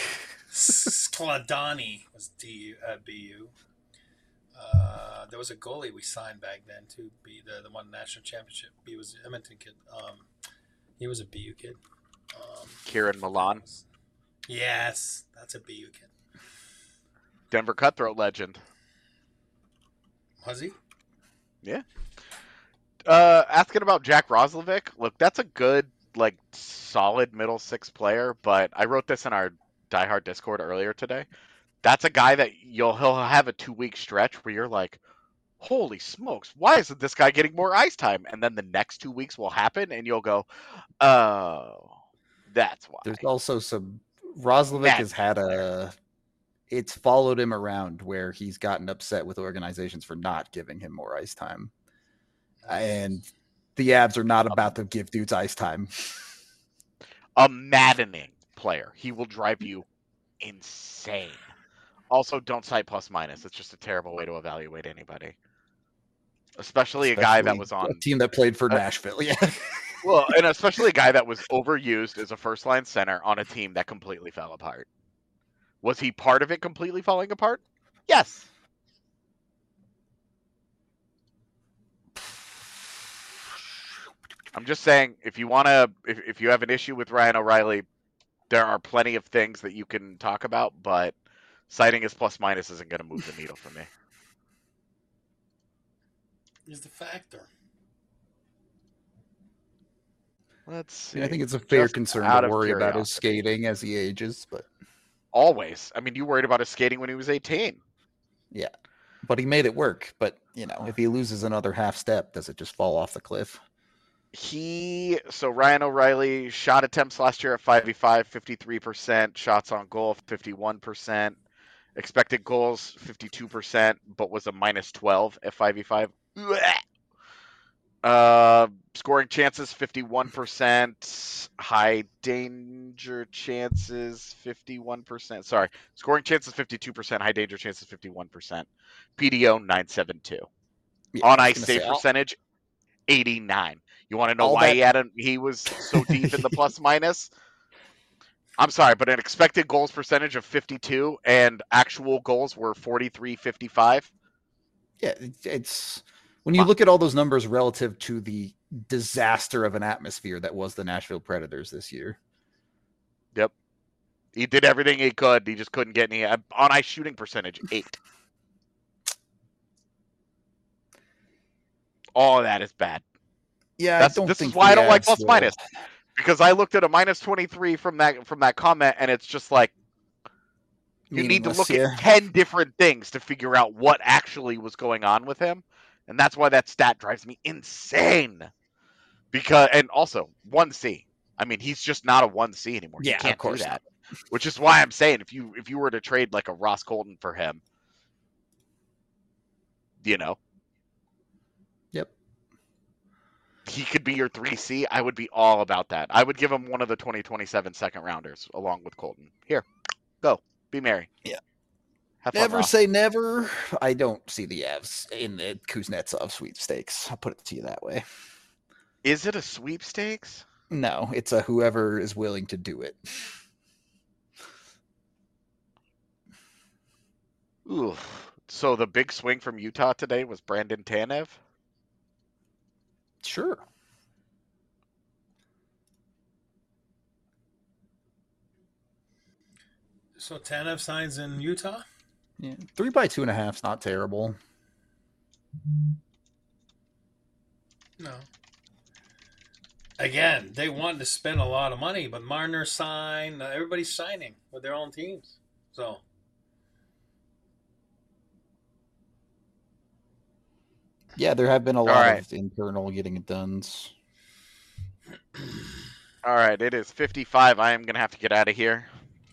Skladani was D U, uh, B U. Uh, there was a goalie we signed back then too. Be the the one national championship. He was an Edmonton kid. Um, he was a B U kid. Um, Kieran Milan. Yes, that's a B U kid. Denver Cutthroat legend. Was he? Yeah. Uh, asking about Jack Roslovic. Look, that's a good, like, solid middle six player. But I wrote this in our Die Hard Discord earlier today. That's a guy that you'll he'll have a two week stretch where you're like, holy smokes, why isn't this guy getting more ice time? And then the next two weeks will happen, and you'll go, oh, that's why. There's also some Roslovic that's has had a. It's followed him around where he's gotten upset with organizations for not giving him more ice time, and the Avs are not about to give dudes ice time. A maddening player. He will drive you insane. Also, don't cite plus minus. It's just a terrible way to evaluate anybody. Especially, especially a guy that was on... a team that played for uh, Nashville, yeah. Well, and especially a guy that was overused as a first-line center on a team that completely fell apart. Was he part of it completely falling apart? Yes. I'm just saying, if you want to, if, if you have an issue with Ryan O'Reilly, there are plenty of things that you can talk about, but citing his plus minus isn't going to move the needle for me. Is the factor. Let's see. I, mean, I think it's a fair Just concern out to of worry about his curiosity. skating as he ages, but Always. I mean, you worried about his skating when he was eighteen. yeah, but he made it work. But you know, if he loses another half step, does it just fall off the cliff? He so Ryan O'Reilly shot attempts last year at five v five, fifty-three percent, shots on goal fifty-one percent, expected goals fifty-two percent, but was a minus twelve at five v five. Uh, scoring chances fifty-one percent, high danger chances fifty-one percent. Sorry, scoring chances fifty-two percent, high danger chances fifty-one percent. P D O nine seventy-two. Yeah, On I was ice gonna save say, I'll- percentage eighty-nine. You want to know All why that- he had a, he was so deep in the plus minus? I'm sorry, but an expected goals percentage of fifty-two and actual goals were forty-three fifty-five. Yeah, it's, it's when you look at all those numbers relative to the disaster of an atmosphere that was the Nashville Predators this year. Yep. He did everything he could. He just couldn't get any on ice shooting percentage eight. All of that is bad. Yeah, That's, I don't this think is why I don't like Avs plus will- minus, because I looked at a minus twenty-three from that from that comment, and it's just like you need to Meaningless, look yeah. at ten different things to figure out what actually was going on with him, and that's why that stat drives me insane. Because and also one C. I mean, he's just not a one C anymore. Yeah, he of can't do course that. Which is why I'm saying if you if you were to trade like a Ross Colton for him, you know, Yep. he could be your three C. I would be all about that. I would give him one of the twenty twenty-seven second rounders along with Colton. Here, go. Be merry. Yeah. Have fun, Never Ross. say never. I don't see the Avs in the Kuznetsov sweepstakes. I'll put it to you that way. Is it a sweepstakes? No, it's a whoever is willing to do it. Ooh. So the big swing from Utah today was Brandon Tanev? Sure. So Tanev signs in Utah? Yeah. Three by two and a half is not terrible. No. Again, they wanted to spend a lot of money, but Marner signed. Everybody's signing with their own teams. So Yeah, there have been a lot right. of internal getting it done. All right, it is fifty-five. I am going to have to get out of here.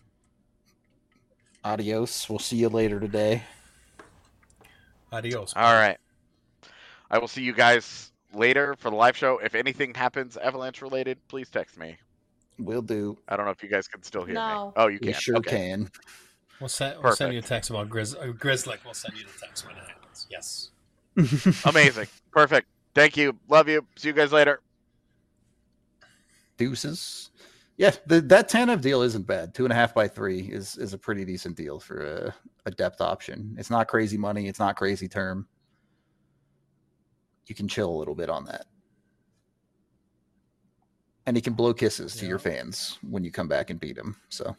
Adios. We'll see you later today. adios. All right. I will see you guys later for the live show. If anything happens Avalanche related, please text me. Will do. I don't know if you guys can still hear No. me. Oh, you We can. sure okay. can. We'll send, we'll send Perfect. you a text about Grizz. Uh, Grizzlick. We'll send you the text when it happens. Yes. Amazing. Perfect. Thank you. Love you. See you guys later. Deuces. Yeah, the, that Tanev deal isn't bad. Two and a half by three is is a pretty decent deal for a, a depth option. It's not crazy money. It's not crazy term. You can chill a little bit on that. And he can blow kisses to Yeah. your fans when you come back and beat him. So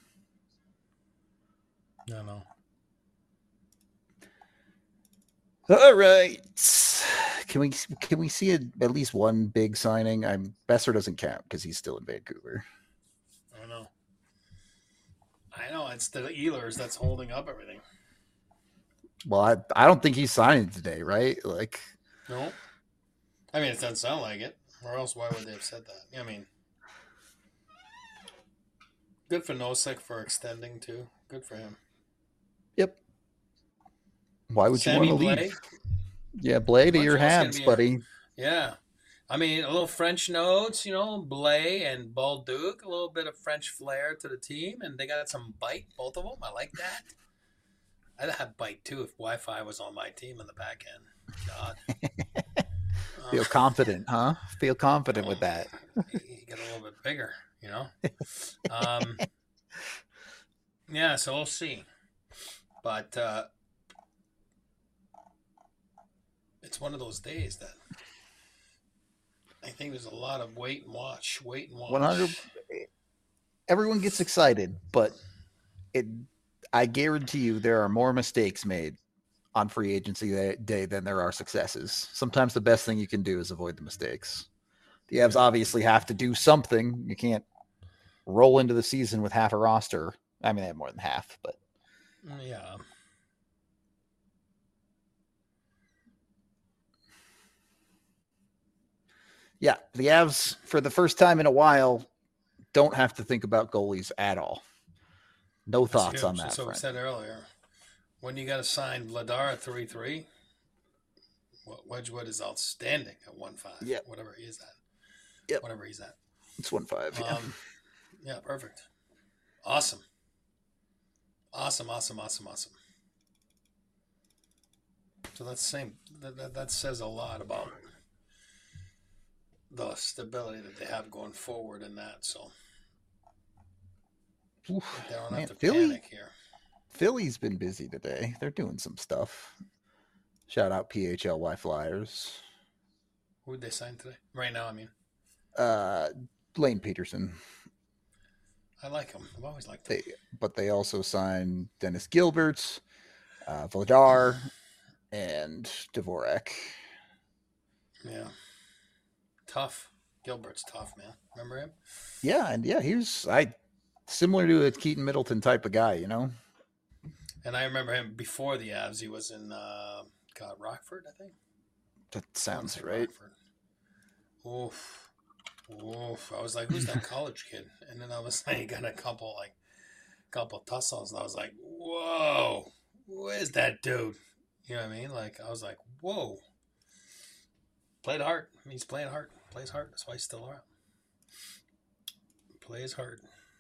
No, no. all right. Can we can we see a, at least one big signing? I'm Besser doesn't count because he's still in Vancouver. I don't know. I know it's the Ehlers that's holding up everything. Well, I I don't think he's signing today, right? Like, No. I mean, it doesn't sound like it. Or else, why would they have said that? I mean, good for Nosek for extending too. Good for him. yep. Why would Sammy you want to Blais? leave? Yeah, Blay to your Montreal's gonna hands, be a- buddy. Yeah. I mean, a little French notes, you know, Blais and Balduc, a little bit of French flair to the team, and they got some bite, both of them. I like that. I'd have bite too if Wi-Fi was on my team in the back end. God. Feel Uh, confident, huh? Feel confident with that. you get a little bit bigger, you know. Um, Yeah, so we'll see. But uh, it's one of those days that I think there's a lot of wait and watch, wait and one hundred. watch. Everyone gets excited, but it. I guarantee you, there are more mistakes made on free agency day than there are successes. Sometimes the best thing you can do is avoid the mistakes. The Avs Yeah, obviously have to do something. You can't roll into the season with half a roster. I mean, they have more than half, but yeah. yeah, the Avs, for the first time in a while, don't have to think about goalies at all. No That's thoughts on huge. that That's what we front. said earlier. When you got to sign Vladar at three three, Wedgwood is outstanding at one five. Yep. Whatever he is at. Yep. Whatever he's at. It's one five. Yeah. Um, yeah, perfect. Awesome. Awesome, awesome, awesome, awesome. So that's the same. That, that, that says a lot about the stability that they have going forward in that. So Oof, they don't man, have to Philly, panic here. Philly's been busy today. They're doing some stuff. Shout out P H L Y Flyers. Who did they sign today? Right now, I mean. Uh, Lane Peterson. I like him. I've always liked him. They, but they also signed Dennis Gilbert, uh, Vladar, and Dvorak. Yeah. Tough. Gilbert's tough, man. Remember him? Yeah, and yeah, he was I similar to a Keaton Middleton type of guy, you know. And I remember him before the Avs. He was in uh, God Rockford, I think. That sounds right. Rockford. Oof. Oof. I was like, who's that college kid? And then I was like, he got a couple like couple tussles, and I was like, whoa, who is that dude? You know what I mean? Like I was like, whoa. Played hard. He's playing hard. Plays hard. That's why he's still around. Plays hard.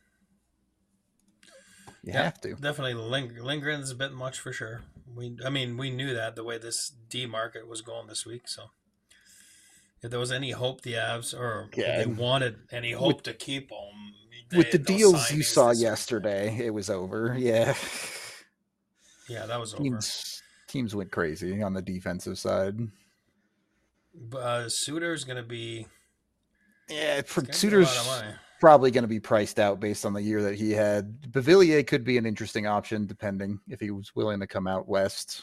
You yeah, have to. Definitely ling- lingering is a bit much for sure. We, I mean, we knew that the way this D market was going this week. So if there was any hope the Avs or Yeah, they wanted any hope with, to keep him, with the deals you saw this yesterday, week. It was over. Yeah. Yeah, that was teams, over. Teams went crazy on the defensive side. Uh, Suter's going to be. Yeah, Suter's probably going to be priced out based on the year that he had. Beauvillier could be an interesting option, depending if he was willing to come out west.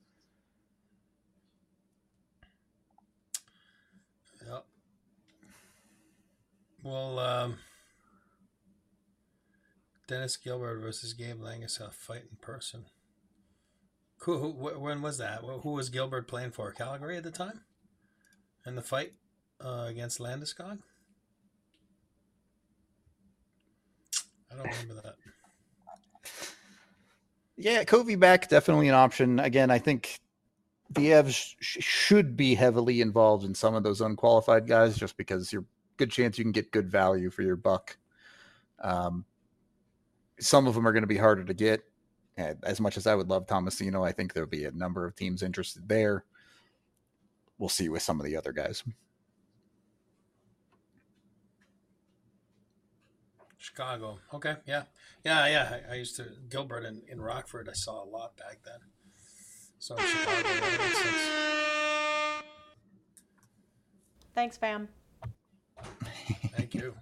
Yep. Well, um, Dennis Gilbert versus Gabe Langus, a fight in person. Who, who, when was that? Who was Gilbert playing for? Calgary at the time? In the fight uh, against Landeskog? I don't remember that. Yeah, Covey back, definitely an option. Again, I think the Avs sh- should be heavily involved in some of those unqualified guys just because you're good chance you can get good value for your buck. Um, some of them are going to be harder to get. And as much as I would love Tomasino, I think there'll be a number of teams interested there. We'll see with some of the other guys. Chicago. Okay. Yeah. Yeah. Yeah. I, I used to, Gilbert in, in Rockford, I saw a lot back then. So in Chicago, that makes sense. Thanks, fam. Thank you.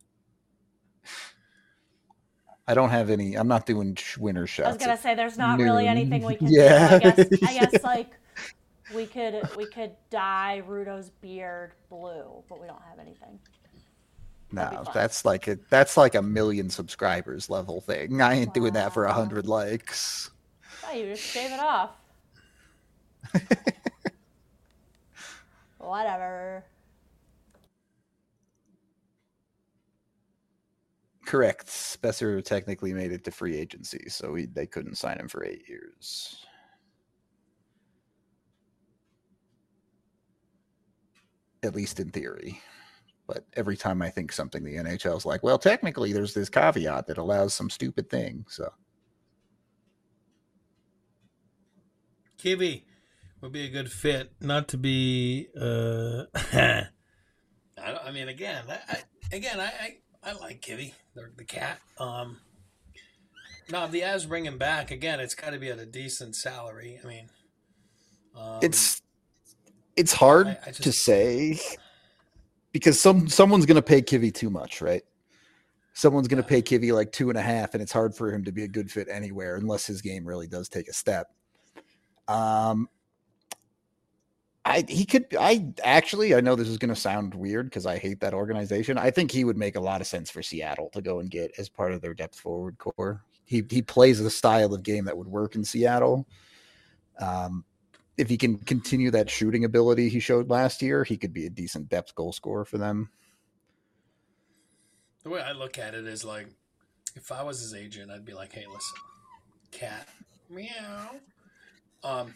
I don't have any. I'm not doing winner shots. I was gonna say there's not noon. really anything we can yeah. do. I guess. I guess like we could we could dye Rudo's beard blue, but we don't have anything. No, that's like a that's like a million subscribers level thing. I ain't wow. doing that for a hundred likes. Oh, you just shave it off. Whatever. Correct. Spesser technically made it to free agency, so he, they couldn't sign him for eight years. At least in theory. But every time I think something, the N H L is like, well, technically there's this caveat that allows some stupid thing. So, Kibby would be a good fit. Not to be, uh, I, don't, I mean, again, I, I again, I, I, I like Kibby, the, the cat. Um, Now, if the Avs bring him back again, it's got to be at a decent salary. I mean, um, It's it's I, hard I to just say because some someone's going to pay Kivy too much, right? Someone's going to yeah. pay Kivy like two and a half, and it's hard for him to be a good fit anywhere unless his game really does take a step. Um, I he could I actually I know this is going to sound weird because I hate that organization. I think he would make a lot of sense for Seattle to go and get as part of their depth forward core. He he plays a style of game that would work in Seattle. Um, if he can continue that shooting ability he showed last year, he could be a decent depth goal scorer for them. The way I look at it is like, if I was his agent, I'd be like, hey, listen, cat, meow. Um,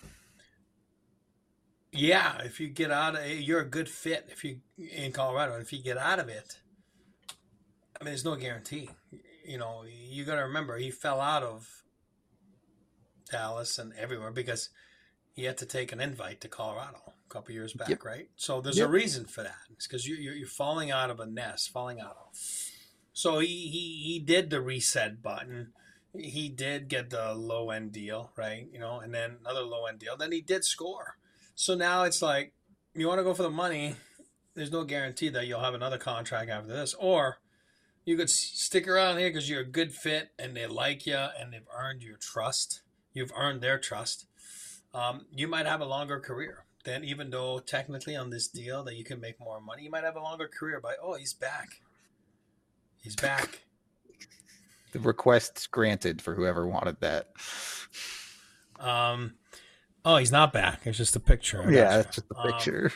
yeah, if you get out of it, you're a good fit if you in Colorado. If you get out of it, I mean, there's no guarantee. You know, you got to remember he fell out of Dallas and everywhere because he had to take an invite to Colorado a couple years Yep. back, right? So there's a Yep. reason for that. It's because you, you're, you're falling out of a nest, falling out of. So he, he he did the reset button. He did get the low end deal, right? You know, and then another low end deal. Then he did score. So now it's like you want to go for the money. There's no guarantee that you'll have another contract after this, or you could stick around here because you're a good fit and they like you and they've earned your trust. You've earned their trust. Um, you might have a longer career. Then, even though technically on this deal that you can make more money, you might have a longer career by, oh, he's back. He's back. The request's granted for whoever wanted that. Um, oh, he's not back. It's just a picture. I Yeah, got you. that's just the Um, picture.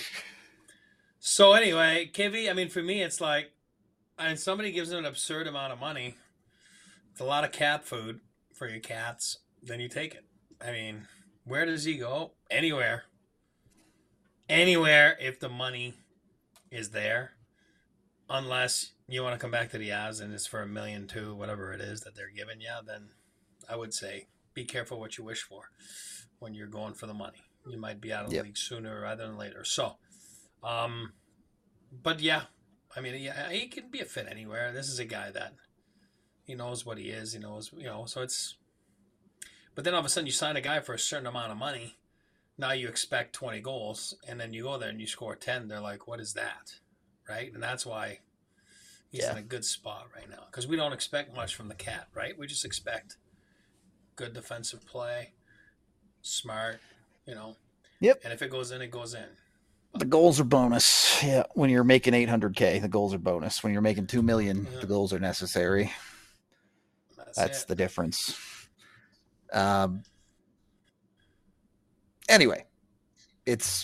so anyway, Kivy, I mean, for me, it's like, and somebody gives him an absurd amount of money. It's a lot of cat food for your cats. Then you take it. I mean, where does he go? Anywhere. Anywhere if the money is there. Unless you want to come back to the Avs and it's for a million two, whatever it is that they're giving you, then I would say be careful what you wish for when you're going for the money. You might be out of the Yep. league sooner rather than later. So, um, but yeah, I mean, yeah, he can be a fit anywhere. This is a guy that he knows what he is. He knows, you know. So it's. But then all of a sudden, you sign a guy for a certain amount of money. Now you expect twenty goals, and then you go there and you score ten. They're like, "What is that?" Right? And that's why he's Yeah. in a good spot right now because we don't expect much from the cat, right? We just expect good defensive play, smart, you know. Yep. And if it goes in, it goes in. The goals are bonus. Yeah, when you're making eight hundred K, the goals are bonus. When you're making two million, Yeah, the goals are necessary. that's That's it. the difference. Um, anyway, it's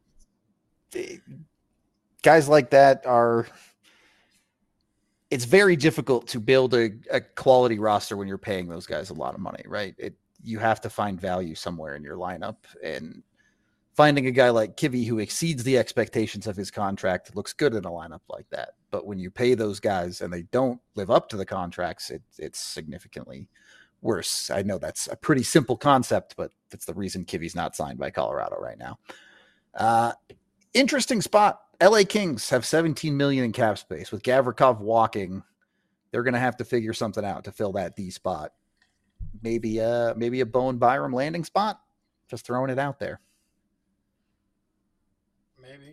guys like that are it's very difficult to build a, a quality roster when you're paying those guys a lot of money, right? It you have to find value somewhere in your lineup, and finding a guy like Kivy who exceeds the expectations of his contract looks good in a lineup like that. But when you pay those guys and they don't live up to the contracts, it, it's significantly worse. I know that's a pretty simple concept, but that's the reason Kivy's not signed by Colorado right now. Uh, interesting spot. L A Kings have seventeen million in cap space. With Gavrikov walking, they're going to have to figure something out to fill that D spot. Maybe uh maybe a Bowen Byram landing spot. Just throwing it out there. Maybe.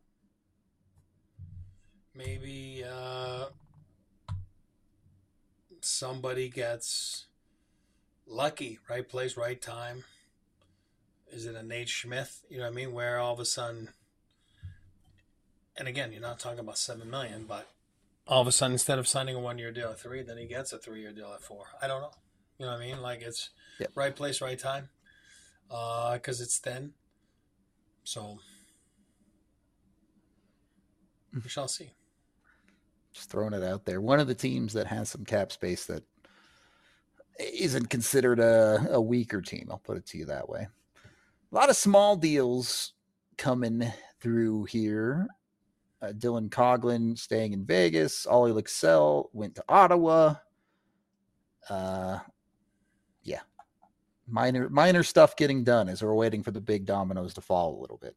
Maybe uh, somebody gets lucky, right place, right time. Is it a Nate Schmidt? You know what I mean? Where all of a sudden, and again, you're not talking about seven million, but all of a sudden, instead of signing a one-year deal at three, then he gets a three-year deal at four. I don't know. You know what I mean? Like it's Yep. right place, right time, because uh, it's thin. So we shall see. Just throwing it out there. One of the teams that has some cap space that isn't considered a, a weaker team. I'll put it to you that way. A lot of small deals coming through here. Uh, Dylan Coughlin staying in Vegas. Ollie Luxell went to Ottawa. Uh, yeah, minor minor stuff getting done as we're waiting for the big dominoes to fall a little bit.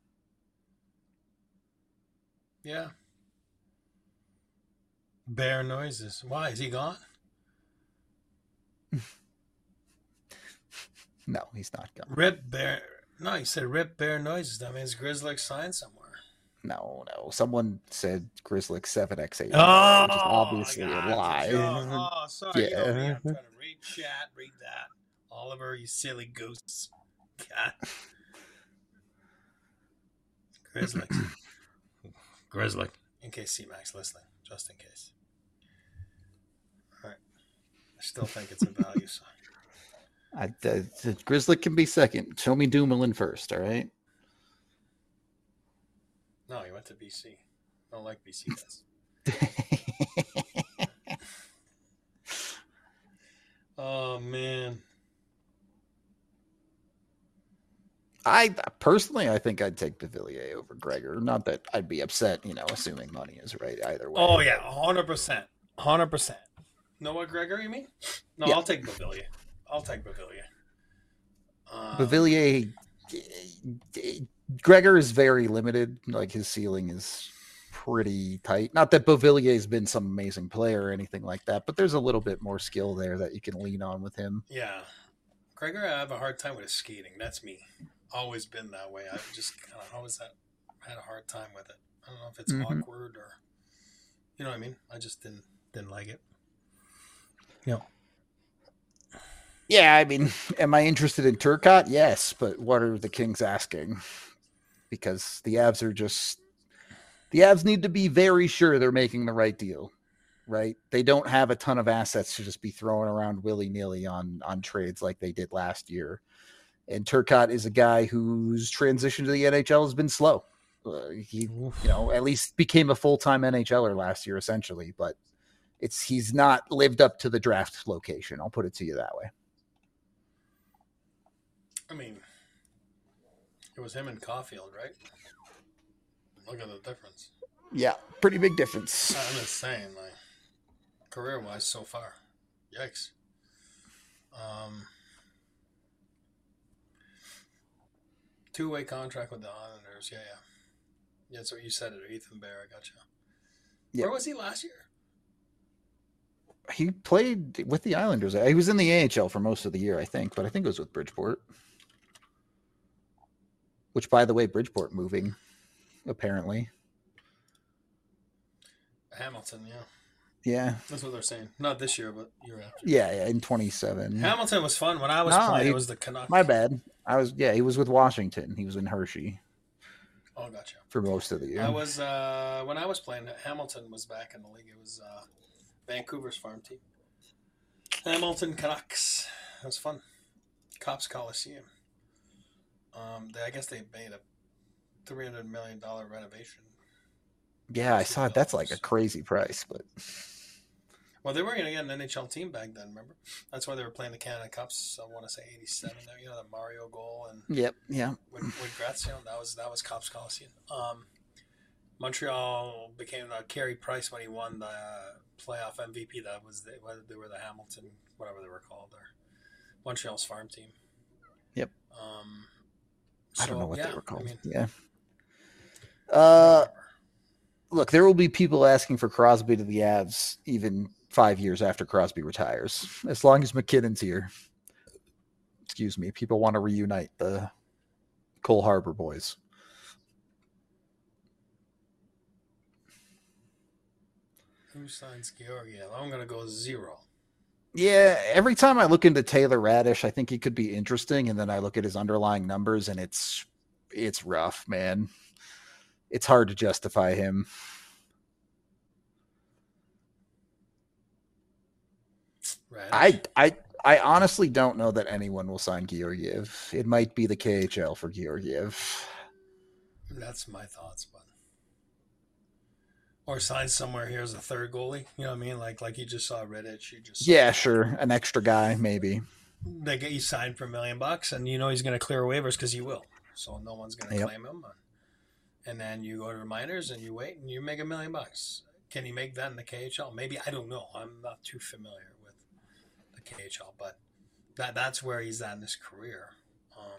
Yeah. Bear noises. Why is he gone? No, he's not gone. Rip Bear. No, you said Rip Bear Noises. That means Grizzly signed somewhere. No, no. Someone said Grizzly seven x eight Miller, which is Oh, I obviously a got it's a joke. lie. Oh, sorry. You know me. Yeah. I'm trying to read chat, read that. Oliver, you silly goose. God. Grizzly. Grizzly. In case C-Mac's listening, just in case. All right. I still think it's a value sign. I, the, the Grizzly can be second. Show me Dumoulin first, all right? No, he went to B C. I don't like B C guys. Oh, man. I personally, I think I'd take Bavillier over Gregor. Not that I'd be upset, you know, assuming money is right either way. Oh, yeah, one hundred percent. one hundred percent. Noah Gregor, you mean? No, Yeah. I'll take Bavillier. I'll take Bavillier. Um, Bavillier, Gregor is very limited. Like, his ceiling is pretty tight. Not that Bavillier has been some amazing player or anything like that, but there's a little bit more skill there that you can lean on with him. Yeah. Gregor, I have a hard time with his skating. That's me. Always been that way. I've just kind of always had, had a hard time with it. I don't know if it's Mhm. awkward or, you know what I mean? I just didn't didn't like it. Yeah. Yeah, I mean, am I interested in Turcotte? Yes, but what are the Kings asking? Because the Avs are just the Avs need to be very sure they're making the right deal, right? They don't have a ton of assets to just be throwing around willy-nilly on on trades like they did last year. And Turcotte is a guy whose transition to the N H L has been slow. Uh, he, Oof. you know, at least became a full-time NHLer last year, essentially, but it's he's not lived up to the draft location. I'll put it to you that way. I mean, it was him and Caulfield, right? Look at the difference. Yeah, pretty big difference. I'm just saying, like, career-wise so far. Yikes. Um, two-way contract with the Islanders. Yeah, yeah. Yeah, that's what you said it, Ethan Bear. I got you. Yeah. Where was he last year? He played with the Islanders. He was in the A H L for most of the year, I think, but I think it was with Bridgeport. Which, by the way, Bridgeport moving, apparently. Hamilton, yeah. Yeah. That's what they're saying. Not this year, but year after. Yeah, yeah, in twenty-seven. Hamilton was fun. When I was No, playing, he- it was the Canucks. My bad. I was, yeah, he was with Washington. He was in Hershey Oh, gotcha. for most of the year. I was, uh, when I was playing, Hamilton was back in the league. It was uh, Vancouver's farm team. Hamilton Canucks. It was fun. Cops Coliseum. Um, they, I guess they made a three hundred million dollars renovation. Yeah, I saw it. That's like a crazy price, but Well, they were going to get an N H L team back then, remember? That's why they were playing the Canada Cups. I want to say eighty-seven. You know, the Mario goal and yep, yeah. with, with Grazia. That was that was Cops Coliseum. Um, Montreal became uh, Carey Price when he won the uh, playoff M V P. That was the, they were the Hamilton, whatever they were called, or Montreal's farm team. Yep. Um, I don't so, know what yeah, they were called. I mean, yeah. Uh, look, there will be people asking for Crosby to the Avs even five years after Crosby retires, as long as McKinnon's here. Excuse me. People want to reunite the Cole Harbor boys. Who signs Georgiev? I'm going to go zero. Yeah, every time I look into Taylor Radish, I think he could be interesting, and then I look at his underlying numbers, and it's it's rough, man. It's hard to justify him. Radish? I I I honestly don't know that anyone will sign Georgiev. It might be the K H L for Georgiev. That's my thoughts, but or sign somewhere here as a third goalie. You know what I mean? Like like you just saw Redditch. You just Yeah, sure, an extra guy maybe. They get you signed for a million bucks, and you know he's going to clear waivers because he will. So no one's going to Yep. claim him. And then you go to the minors and you wait and you make a million bucks. Can he make that in the K H L? Maybe. I don't know. I'm not too familiar with the K H L, but that that's where he's at in his career. Um,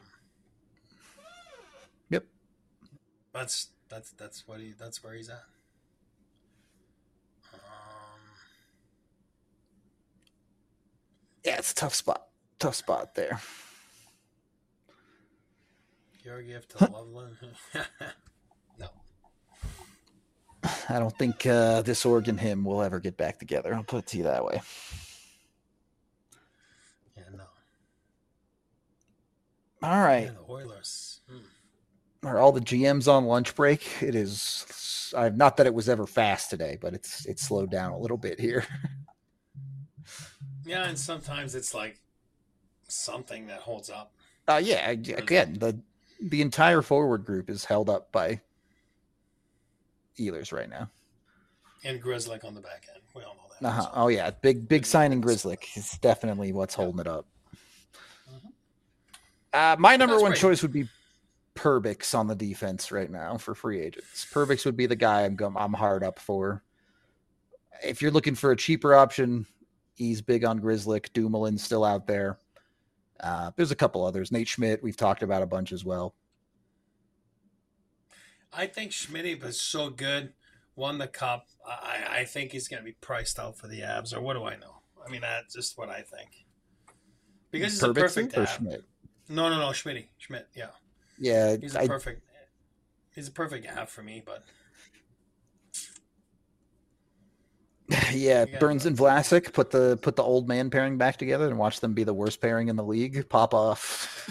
Yep. That's that's that's what he that's where he's at. Um, Yeah, it's a tough spot. Tough spot there. Georgiev to Loveland. No. I don't think uh, this Oregon him will ever get back together. I'll put it to you that way. Yeah, no. All right. Yeah, the Oilers. Hmm. Are all the G Ms on lunch break? It is. I, not that it was ever fast today, but it's it's slowed down a little bit here. Yeah, and sometimes it's like something that holds up. Uh, yeah, again, the the entire forward group is held up by Ehlers right now. And Grzelcyk on the back end. We all know that. Uh-huh. So. Oh, yeah. Big, big signing Grzelcyk is definitely what's yeah. holding it up. Mm-hmm. Uh, my number That's one great. choice would be Perbix on the defense right now for free agents. Perbix would be the guy I'm I'm hard up for. If you're looking for a cheaper option, he's big on Grzelcyk. Dumoulin's still out there. Uh, there's a couple others. Nate Schmidt, we've talked about a bunch as well. I think Schmidt was so good, won the cup. I, I think he's going to be priced out for the Abs, or what do I know? I mean, that's just what I think. Because he's Perbix a perfect Ab. Schmidt? No, no, no, Schmidt. Schmidt, yeah. Yeah. He's a I, perfect He's a perfect Ab for me, but... Yeah, Burns and Vlasic put the put the old man pairing back together and watch them be the worst pairing in the league. Pop off.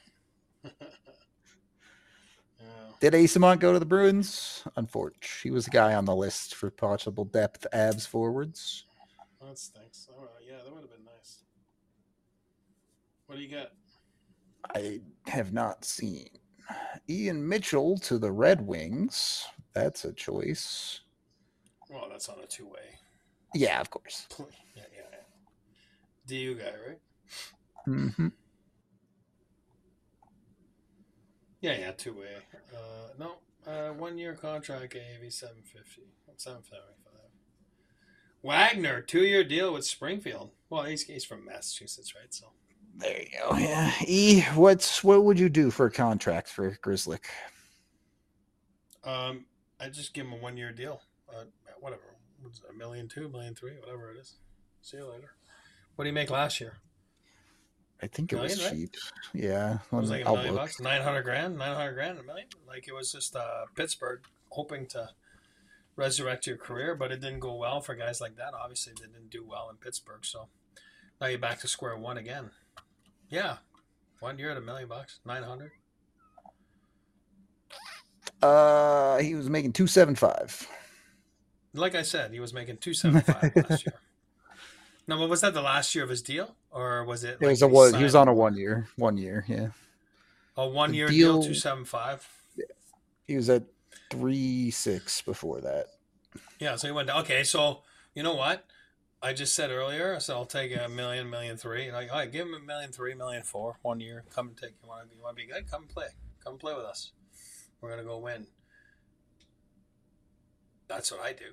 Did Eyssimont go to the Bruins? Unfortunately, he was the guy on the list for possible depth abs forwards. That stinks. Oh, yeah, that would have been nice. What do you got? I have not seen. Ian Mitchell to the Red Wings. That's a choice. Well, that's on a two-way. Yeah, of course. Yeah, yeah, yeah. D U guy, right? Mm-hmm. Yeah, yeah, two-way. Uh, no, uh, one-year contract, A A V seven fifty, seven seventy-five. Wagner, two-year deal with Springfield. Well, he's he's from Massachusetts, right? So there you go. Yeah. E, what's what would you do for a contract for Grzelcyk? Um, I just give him a one-year deal. Uh, whatever, what's it, a million two, million three, whatever it is. See you later. What did he make last year? I think it million, was right? cheap. Yeah. It was like a million bucks, nine hundred grand, nine hundred grand, a million. Like it was just uh, Pittsburgh hoping to resurrect your career, but it didn't go well for guys like that. Obviously, they didn't do well in Pittsburgh, so now you're back to square one again. Yeah, one year at a million bucks, nine hundred. Uh, he was making two seven five. Like I said, he was making two seven five last year. No, but was that the last year of his deal, or was it? It was like a one. He was on a one year, one year, yeah. A one year deal, two seven five. Yeah, he was at three six before that. Yeah, so he went down. Okay, so you know what? I just said earlier, I said I'll take a million, million three. Like, all right, give him a million three, million four, one year. Come and take. You want to? You want to be good? Come and play. Come and play with us. We're gonna go win. That's what I do.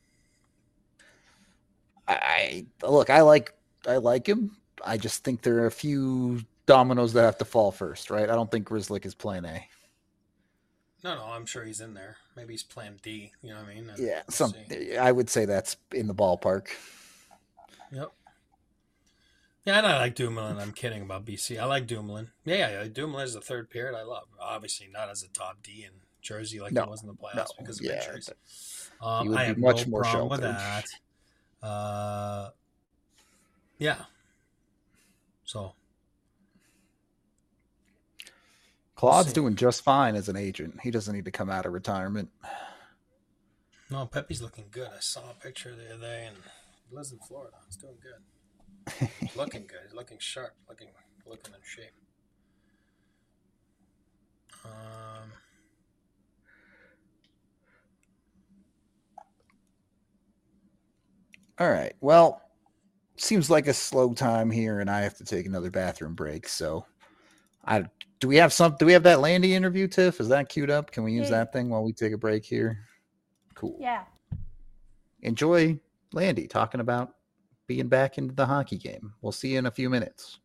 I look, I like, I like him. I just think there are a few dominoes that have to fall first, right? I don't think Grzelcyk is plan A. No, no, I'm sure he's in there. Maybe he's plan D. You know what I mean? And yeah, we'll some. See. I would say that's in the ballpark. Yep. Yeah, and I like Dumoulin. I'm kidding about B C. I like Dumoulin. Yeah, yeah, Dumoulin is the third period. I love. Obviously, not as a top D in Jersey like no, he was in the playoffs no, because of yeah, injuries. Um, I have much no more problem sheltered. with that. Uh, yeah. So Claude's we'll doing just fine as an agent. He doesn't need to come out of retirement. No, Pepe's looking good. I saw a picture the other day, and he lives in Florida. He's doing good. He's looking good. He's looking sharp. Looking, looking in shape. Um. All right. Well, seems like a slow time here, and I have to take another bathroom break. So, I do we have some? Do we have that Landy interview, Tiff? Is that queued up? Can we use yeah. that thing while we take a break here? Cool. Yeah. Enjoy Landy talking about being back into the hockey game. We'll see you in a few minutes.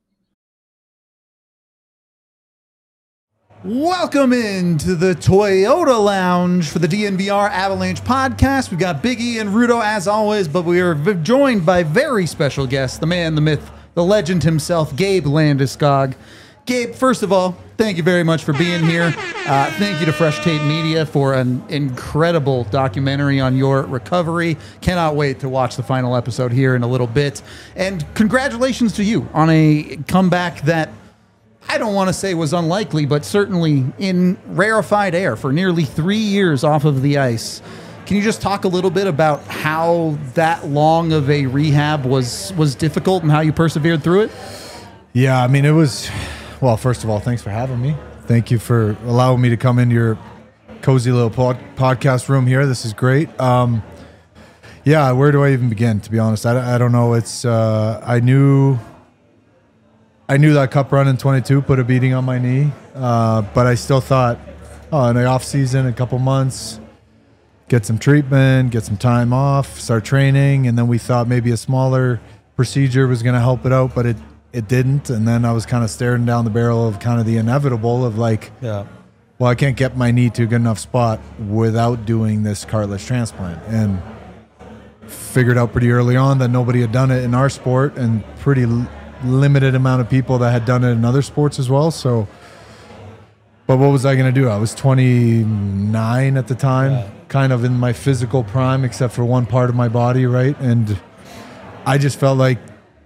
Welcome into the Toyota Lounge for the D N V R Avalanche podcast. We've got Big E and Rudo as always, but we are joined by very special guests, the man, the myth, the legend himself, Gabe Landeskog. Gabe, first of all, thank you very much for being here. Uh, thank you to Fresh Tape Media for an incredible documentary on your recovery. Cannot wait to watch the final episode here in a little bit. And congratulations to you on a comeback that I don't want to say was unlikely, but certainly in rarefied air for nearly three years off of the ice. Can you just talk a little bit about how that long of a rehab was was difficult and how you persevered through it? Yeah, I mean, it was... Well, first of all, thanks for having me. Thank you for allowing me to come into your cozy little pod podcast room here. This is great. Um, yeah, where do I even begin, to be honest? I, I don't know. It's uh, I knew I knew that cup run in twenty-two put a beating on my knee, uh, but I still thought, oh, in the off season, a couple months, get some treatment, get some time off, start training, and then we thought maybe a smaller procedure was going to help it out, but it It didn't, and then I was kind of staring down the barrel of kind of the inevitable of like, yeah, well, I can't get my knee to a good enough spot without doing this cartilage transplant, and figured out pretty early on that nobody had done it in our sport, and pretty l limited amount of people that had done it in other sports as well. So, but what was I going to do? I was twenty-nine at the time, yeah. kind of in my physical prime, except for one part of my body, right? And I just felt like,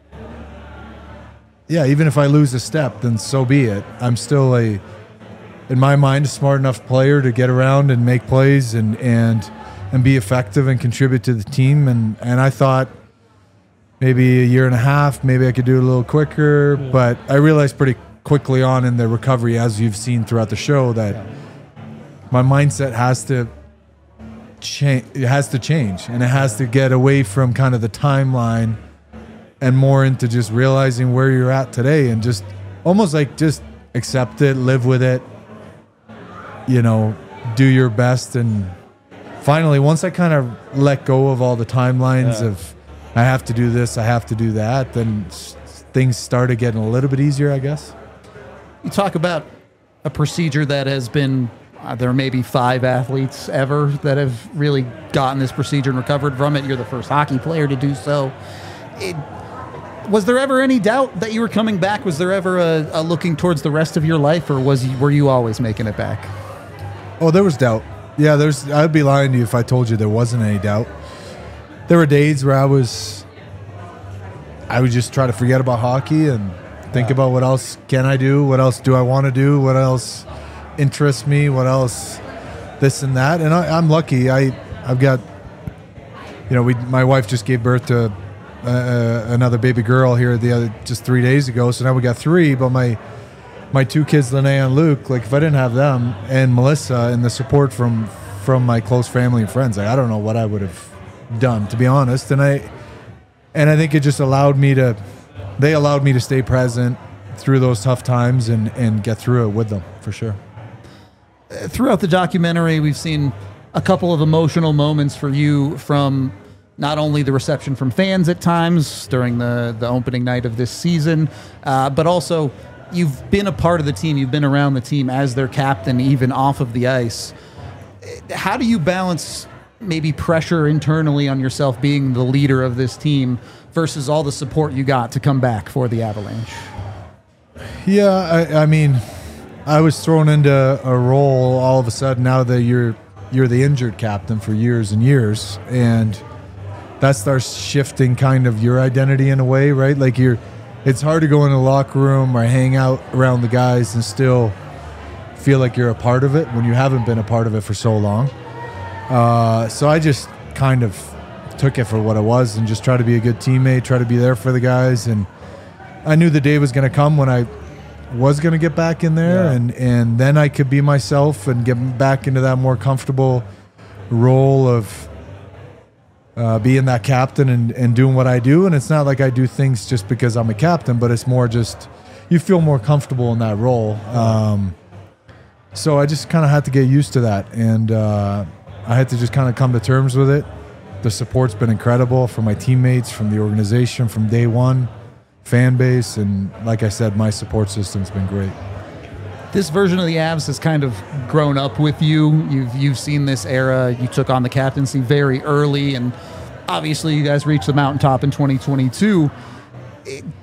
yeah, even if I lose a step, then so be it. I'm still a, in my mind, a smart enough player to get around and make plays and and and be effective and contribute to the team. And and I thought maybe a year and a half, maybe I could do it a little quicker. Yeah. But I realized pretty quickly on in the recovery, as you've seen throughout the show, that yeah. my mindset has to change. It has to change, and it has to get away from kind of the timeline and more into just realizing where you're at today, and just almost like just accept it, live with it, you know, do your best. And finally, once I kind of let go of all the timelines yeah. of I have to do this, I have to do that, then things started getting a little bit easier, I guess. You talk about a procedure that has been, uh, there may be five athletes ever that have really gotten this procedure and recovered from it. You're the first hockey player to do so. It, Was there ever any doubt that you were coming back? Was there ever a, a looking towards the rest of your life, or was you, were you always making it back? Oh, there was doubt. Yeah, there's. I'd be lying to you if I told you there wasn't any doubt. There were days where I was, I would just try to forget about hockey and think yeah. about what else can I do, what else do I want to do, what else interests me, what else, this and that. And I, I'm lucky. I I've got, you know, we my wife just gave birth to Uh, another baby girl here the other just three days ago, so now we got three. But my my two kids, Linnea and Luke, like if I didn't have them and Melissa and the support from from my close family and friends, like, I don't know what I would have done, to be honest. And I and I think it just allowed me to they allowed me to stay present through those tough times and and get through it with them, for sure. Throughout the documentary, we've seen a couple of emotional moments for you, from not only the reception from fans at times during the, the opening night of this season, uh, but also you've been a part of the team. You've been around the team as their captain, even off of the ice. How do you balance maybe pressure internally on yourself being the leader of this team versus all the support you got to come back for the Avalanche? Yeah, I, I mean, I was thrown into a role all of a sudden now that you're you're the injured captain for years and years, and that starts shifting kind of your identity in a way, right? Like you're, it's hard to go in the locker room or hang out around the guys and still feel like you're a part of it when you haven't been a part of it for so long. Uh, so I just kind of took it for what it was and just try to be a good teammate, try to be there for the guys. And I knew the day was going to come when I was going to get back in there, yeah. and, and then I could be myself and get back into that more comfortable role of uh, being that captain and, and doing what I do. And it's not like I do things just because I'm a captain, but it's more just you feel more comfortable in that role. Um, so I just kind of had to get used to that, and uh, I had to just kind of come to terms with it. The support's been incredible from my teammates, from the organization, from day one, fan base, and like I said, my support system's been great. This version of the Avs has kind of grown up with you. You've you've seen this era. You took on the captaincy very early, and obviously you guys reached the mountaintop in twenty twenty-two. It,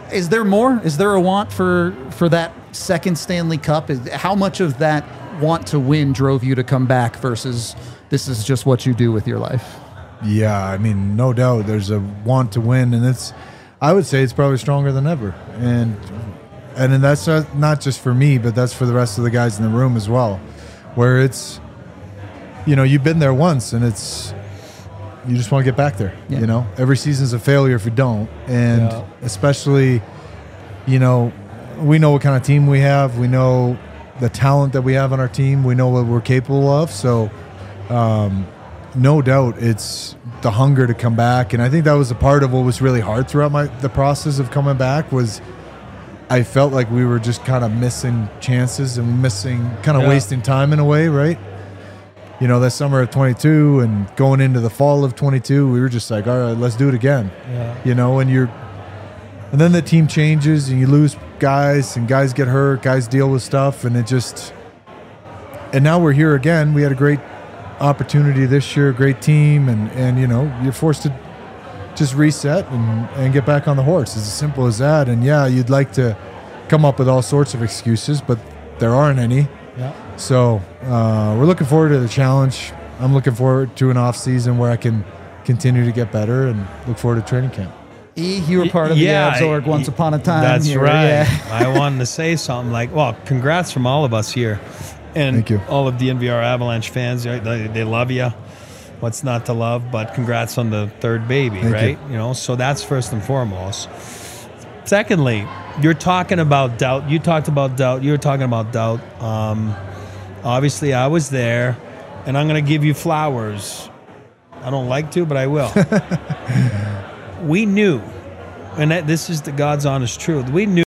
Is there more? Is there a want for for that second Stanley Cup? Is, how much of that want to win drove you to come back versus this is just what you do with your life? Yeah, I mean, no doubt there's a want to win, and it's, I would say it's probably stronger than ever. And and then that's not just for me, but that's for the rest of the guys in the room as well, where it's, you know, you've been there once, and it's, you just want to get back there. Yeah. You know, every season's a failure if you don't, and yeah. especially, you know, we know what kind of team we have. We know the talent that we have on our team. We know what we're capable of. So, um, no doubt, it's the hunger to come back, and I think that was a part of what was really hard throughout my the process of coming back. Was I felt like we were just kind of missing chances and missing, kind of yeah. wasting time in a way, right? You know, that summer of twenty-two and going into the fall of twenty-two, we were just like, all right, let's do it again. Yeah. You know, and you're, and then the team changes and you lose guys and guys get hurt, guys deal with stuff, and it just, and now we're here again. We had a great opportunity this year, great team, and, and you know, you're forced to just reset and, and get back on the horse. It's as simple as that. And yeah, you'd like to come up with all sorts of excuses, but there aren't any. Yeah. So uh, we're looking forward to the challenge. I'm looking forward to an off season where I can continue to get better and look forward to training camp. E, you were part of yeah, the Avs org once upon a time. That's here. right. Yeah. I wanted to say something like, well, congrats from all of us here. And Thank you. all of the N V R Avalanche fans, they, they love you. What's not to love? But congrats on the third baby, Thank right? You. you know, so that's first and foremost. Secondly, you're talking about doubt. You talked about doubt. You were talking about doubt. Um, obviously, I was there, and I'm going to give you flowers. I don't like to, but I will. We knew, and that, this is the God's honest truth. We knew.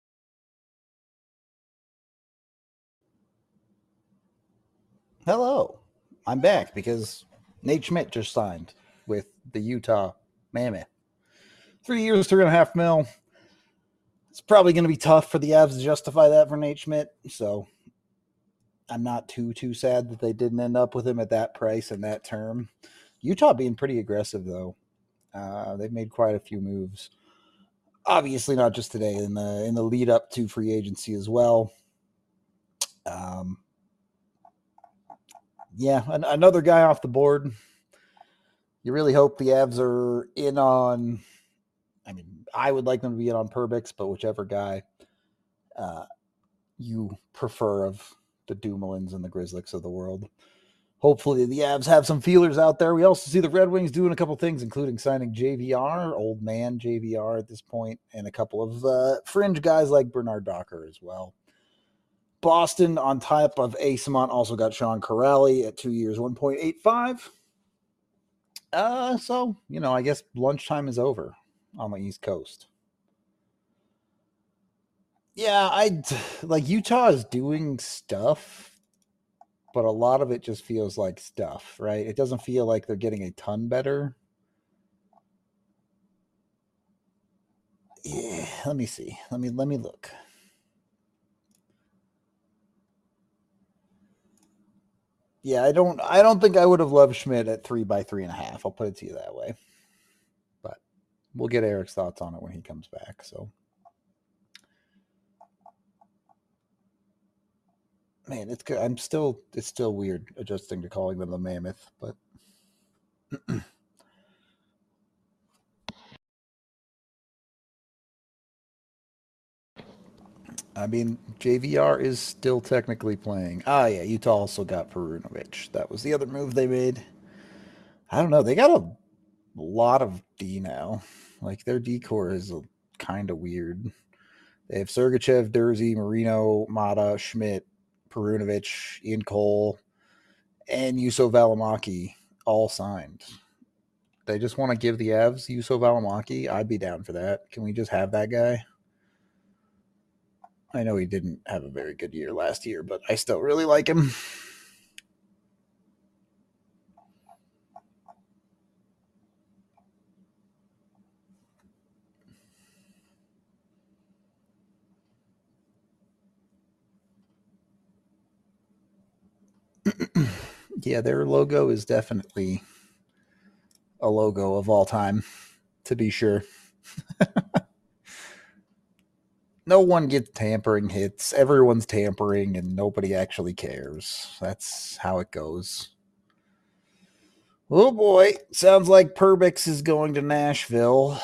Hello, I'm back because Nate Schmidt just signed with the Utah Mammoth. Three years, three and a half mil. It's probably going to be tough for the Avs to justify that for Nate Schmidt, so I'm not too, too sad that they didn't end up with him at that price and that term. Utah being pretty aggressive, though. Uh, they've made quite a few moves. Obviously not just today, in the in the lead up to free agency as well. Um. Yeah, an, another guy off the board. You really hope the Avs are in on, I mean, I would like them to be in on Perbix, but whichever guy uh, you prefer of the Dumoulin's and the Grizzlies of the world. Hopefully the Avs have some feelers out there. We also see the Red Wings doing a couple things, including signing J V R, old man J V R at this point, and a couple of uh, fringe guys like Bernard Docker as well. Boston, on top of Asamont, also got Sean Corrali at two years, one point eight five. Uh, so, you know, I guess lunchtime is over on the East Coast. Yeah, I like Utah is doing stuff, but a lot of it just feels like stuff, right? It doesn't feel like they're getting a ton better. Yeah, let me see. Let me let me look. Yeah, I don't I don't think I would have loved Schmidt at three by three and a half. I'll put it to you that way. But we'll get Eric's thoughts on it when he comes back. So man, it's good. I'm still it's still weird adjusting to calling them the Mammoth, but I mean, J V R is still technically playing. Ah, yeah, Utah also got Perunovic. That was the other move they made. I don't know. They got a lot of D now. Like, their D core is kind of weird. They have Sergachev, Durzi, Marino, Mata, Schmidt, Perunovic, Ian Cole, and Juuso Valimaki all signed. They just want to give the Avs Juuso Valimaki. I'd be down for that. Can we just have that guy? I know he didn't have a very good year last year, but I still really like him. Yeah, their logo is definitely a logo of all time, to be sure. no one gets tampering hits. Everyone's tampering, and nobody actually cares. That's how it goes. Oh boy, sounds like Perbix is going to Nashville.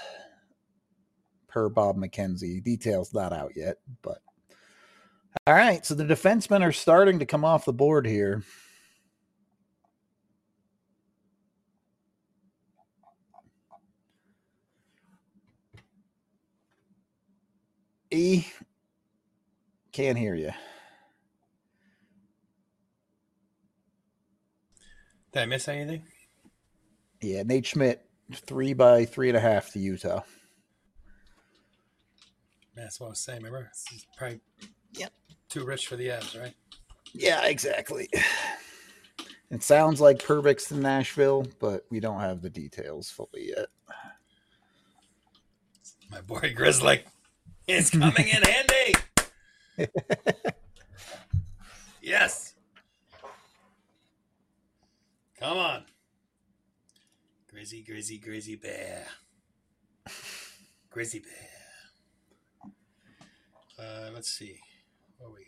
Per Bob McKenzie. Details not out yet, but all right. So the defensemen are starting to come off the board here. E, can't hear you. Did I miss anything? Yeah, Nate Schmidt, three by three and a half to Utah. That's what I was saying. Remember, it's probably yep. too rich for the Avs, right? Yeah, exactly. It sounds like Perbix in Nashville, but we don't have the details fully yet. My boy Grizzly is coming in handy. Yes. Come on. Grizzy, Grizzy, Grizzy Bear. Grizzy Bear. Uh, let's see. What we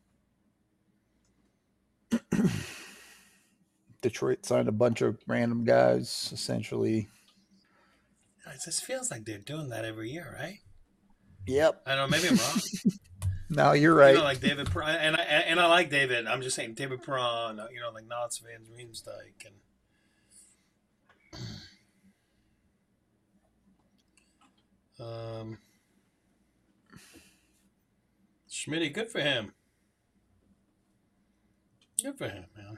got? Detroit signed a bunch of random guys, essentially. It just feels like they're doing that every year, right? Yep. I don't know. Maybe I'm wrong. No, you're right. You know, like David, and I and I like David. I'm just saying David Perron. You know, like Knots Van Riemsdyk and um, Schmitty. Good for him. Good for him, man.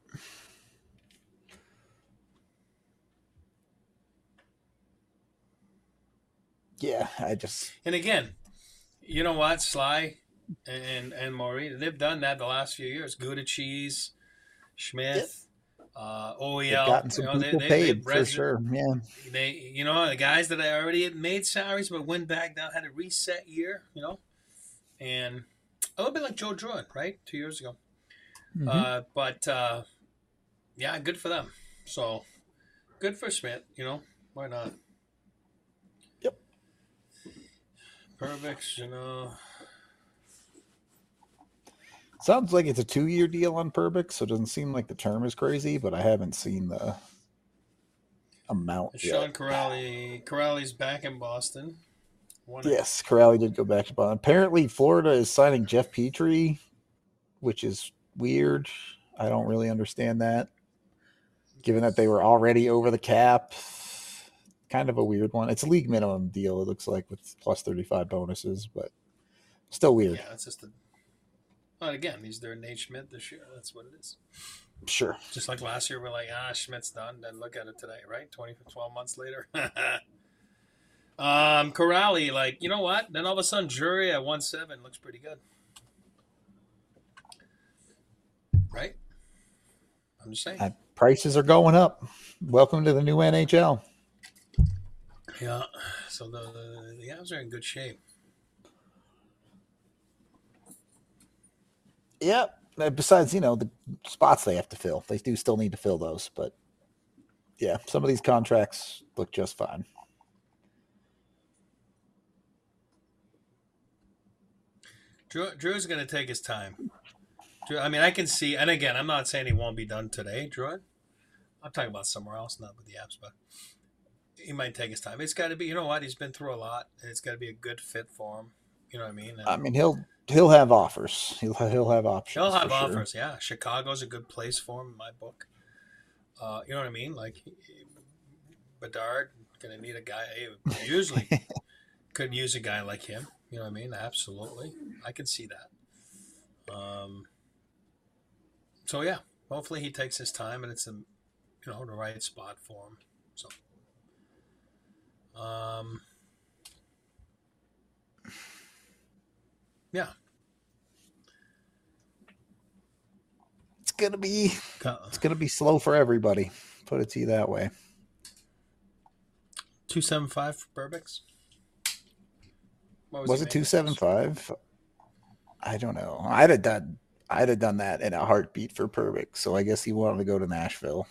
Yeah, I just and again, you know what, Sly and and Maury, they've done that the last few years. Gouda Cheese, Schmidt, yep. uh, O E L. They've gotten some you know, people they, they, paid for sure. Yeah, they you know the guys that already had made salaries but went back down, had a reset year, you know, and a little bit like Joe Druin, right, two years ago. Mm-hmm. Uh, but uh, yeah, good for them. So good for Schmidt. You know, why not? Perbix, you know. Sounds like it's a two-year deal on Perbix, so it doesn't seem like the term is crazy, but I haven't seen the amount Sean yet. Corrali. Corrali's back in Boston. One yes, Corrali did go back to Boston. Apparently, Florida is signing Jeff Petrie, which is weird. I don't really understand that, given that they were already over the cap. Kind of a weird one. It's a league minimum deal, it looks like, with plus thirty-five bonuses, but still weird. Yeah, it's just a. Well, again, he's their Nate Schmidt this year. That's what it is. Sure. Just like last year, we're like, ah, Schmidt's done. Then look at it today, right? twenty, twelve months later. um, Corrali, like, you know what? Then all of a sudden, Jury at one seven looks pretty good. Right? I'm just saying. Uh, prices are going up. Welcome to the new N H L. Yeah, so the the, the Avs are in good shape. Yep. Besides, you know, the spots they have to fill. They do still need to fill those, but yeah, some of these contracts look just fine. Drew Drew's going to take his time. Drew, I mean, I can see, and again, I'm not saying he won't be done today, Drew. I'm talking about somewhere else, not with the Avs, but he might take his time. It's got to be, you know what? He's been through a lot, and it's got to be a good fit for him. You know what I mean? And I mean, he'll he'll have offers. He'll he'll have options. He'll have offers. Sure. Yeah, Chicago's a good place for him in my book. Uh, you know what I mean? Like Bedard gonna need a guy. Usually, could use a guy like him. You know what I mean? Absolutely, I can see that. Um. So yeah, hopefully he takes his time and it's a, you know, the right spot for him. So. Um. Yeah. It's gonna be it's gonna be slow for everybody. Put it to you that way. Two seven five for Perbix. Was, was it two seven five? I don't know. I'd have done I'd have done that in a heartbeat for Perbix. So I guess he wanted to go to Nashville.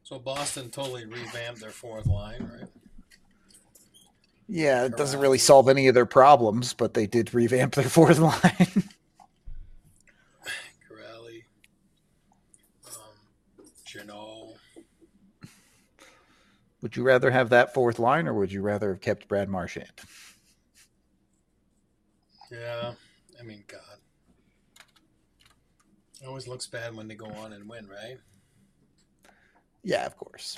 So Boston totally revamped their fourth line, right? Yeah, it doesn't really Corrali, solve any of their problems, but they did revamp their fourth line. Corrali, um, Janot. Would you rather have that fourth line, or would you rather have kept Brad Marchand? Yeah, I mean, God. It always looks bad when they go on and win, right? Yeah, of course.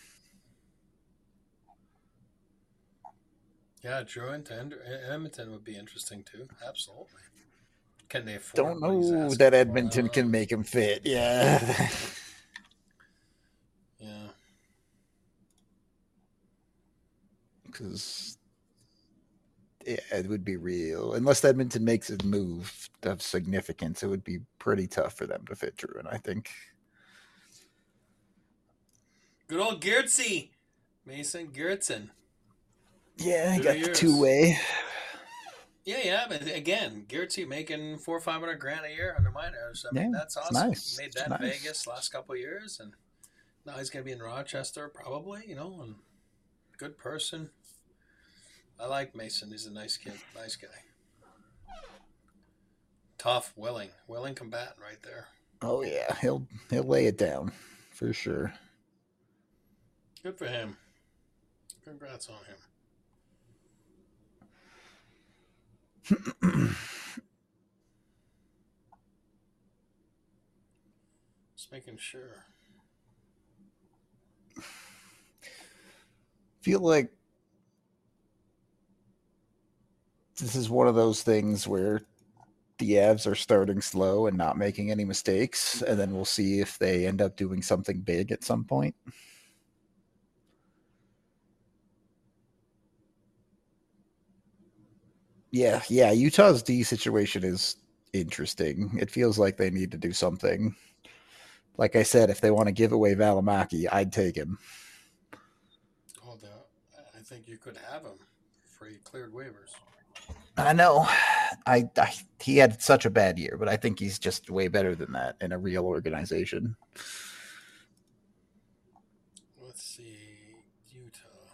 Yeah, Druin to Edmonton would be interesting too. Absolutely. Can they Don't afford what he's know asking that for? I Edmonton don't can know. make him fit. Yeah. Yeah. Because yeah, it would be real. Unless Edmonton makes a move of significance, it would be pretty tough for them to fit Druin, I think. Good old Geertzy. Mason Geertsen. Yeah, I Two got the two years. way. Yeah, yeah, but again, Geertzy making four or five hundred grand a year under minors. I mean, Yeah, that's it's awesome. nice. Made It's that in nice. Vegas last couple of years, and now he's gonna be in Rochester probably. You know, and good person. I like Mason. He's a nice kid, nice guy. Tough, willing, willing combatant right there. Oh yeah, he'll he'll lay it down for sure. Good for him. Congrats on him. Just making sure. Feel like this is one of those things where the Avs are starting slow and not making any mistakes, and then we'll see if they end up doing something big at some point. Yeah, yeah, Utah's D situation is interesting. It feels like they need to do something. Like I said, if they want to give away Valimaki, I'd take him. Oh, the, I think you could have him for he cleared waivers. I know. I, I he had such a bad year, but I think he's just way better than that in a real organization. Let's see, Utah.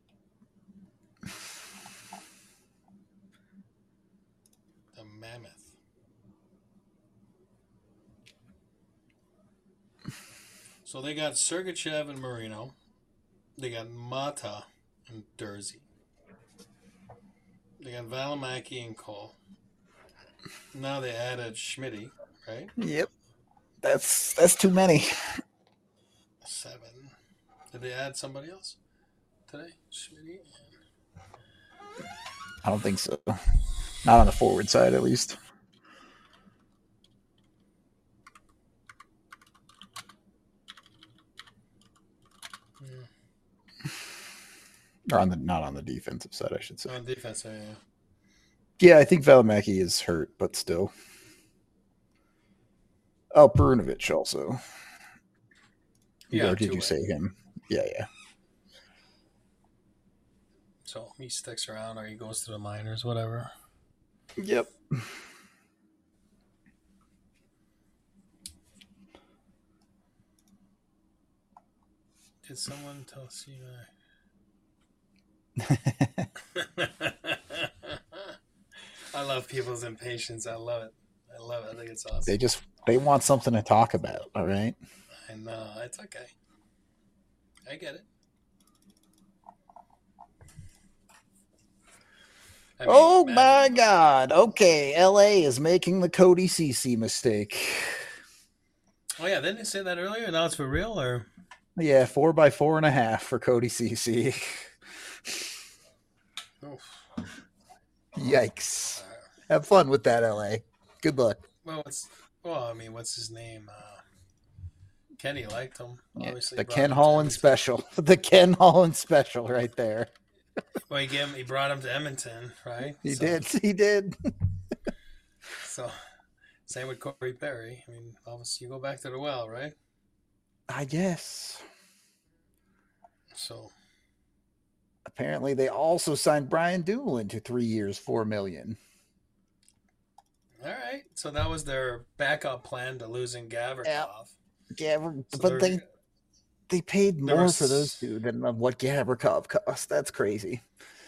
The Mammoth. So they got Sergachev and Marino. They got Mata and Dursey. They got Valimaki and Cole. Now they added Schmitty, right? Yep, that's that's too many. Seven. Did they add somebody else today? Schmitty. I don't think so. Not on the forward side, at least. Yeah. Or on the not on the defensive side, I should say. On defense, yeah. Yeah, I think Valimaki is hurt, but still. Oh, Perunovic also. Yeah, Or did you two-way. say him? Yeah, yeah. So he sticks around or he goes to the minors, whatever. Yep. Did someone tell C I? I love people's impatience. I love it. I love it. I think it's awesome. They just they want something to talk about, all right? I know. It's okay. I get it. I mean, Oh man, my god. Okay, L A is making the Cody Cece mistake. Oh yeah, didn't they say that earlier? Now it's for real, or Yeah, four by four and a half for Cody Cece. Oof. Yikes. Uh, Have fun with that, L A. Good luck. well, what's well, I mean, what's his name? Uh, Kenny liked him. Yeah, Obviously, the brought Ken him to Holland Edmonton. special. The Ken Holland special right there. Well, he gave him, he brought him to Edmonton, right? He so, did. He did. So, same with Corey Perry. I mean, obviously, you go back to the well, right? I guess. So, Apparently, they also signed Brian Dumoulin to three years, four million. all right. So that was their backup plan to losing Gavrikov. Yeah, So but they're- they they paid There more for those was, two than what Gavrikov cost. That's crazy.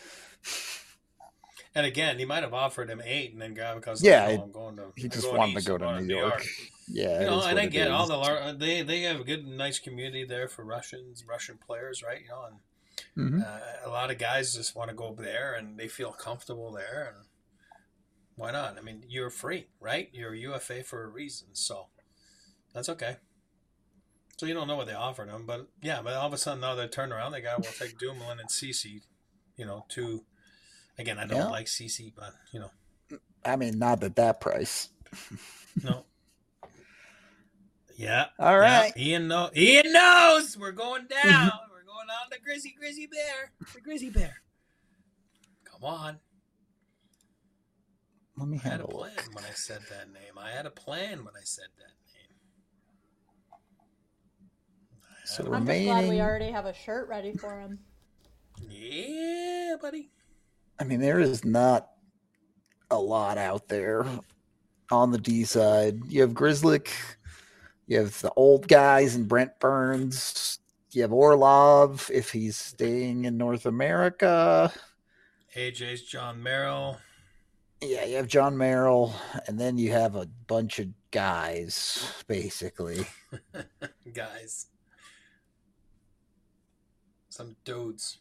and again, he might have offered him eight, and then Gavikov's like, Yeah, "No, it, I'm going to, he I'm just going wanted to east. go I'm to going New to New York. York." Yeah, You it know, is and what I it get all is. the lar- they they have a good, nice community there for Russians, Russian players, right? You know, and Mm-hmm. uh, a lot of guys just want to go there and they feel comfortable there, and why not? I mean, you're free, right? You're a U F A for a reason, so that's okay. So you don't know what they offered him, but yeah, but all of a sudden now they turn around, they got we'll take Dumoulin and Cece, you know, two. Again, I don't Yeah, like Cece, but you know, I mean, not at that price. no, yeah, All yeah. right. Ian know, Ian knows we're going down. We're going on the Grizzly Grizzly Bear, the Grizzly Bear. Come on. Let me I had have a a look. plan when I said that name. I had a plan when I said that name. I So had a I'm just glad we remaining, already have a shirt ready for him. Yeah, buddy. I mean, there is not a lot out there on the D side. You have Grizzlick, you have the old guys and Brent Burns, you have Orlov if he's staying in North America. A J's John Merrill. Yeah, you have John Merrill, and then you have a bunch of guys, basically. Guys. Some dudes.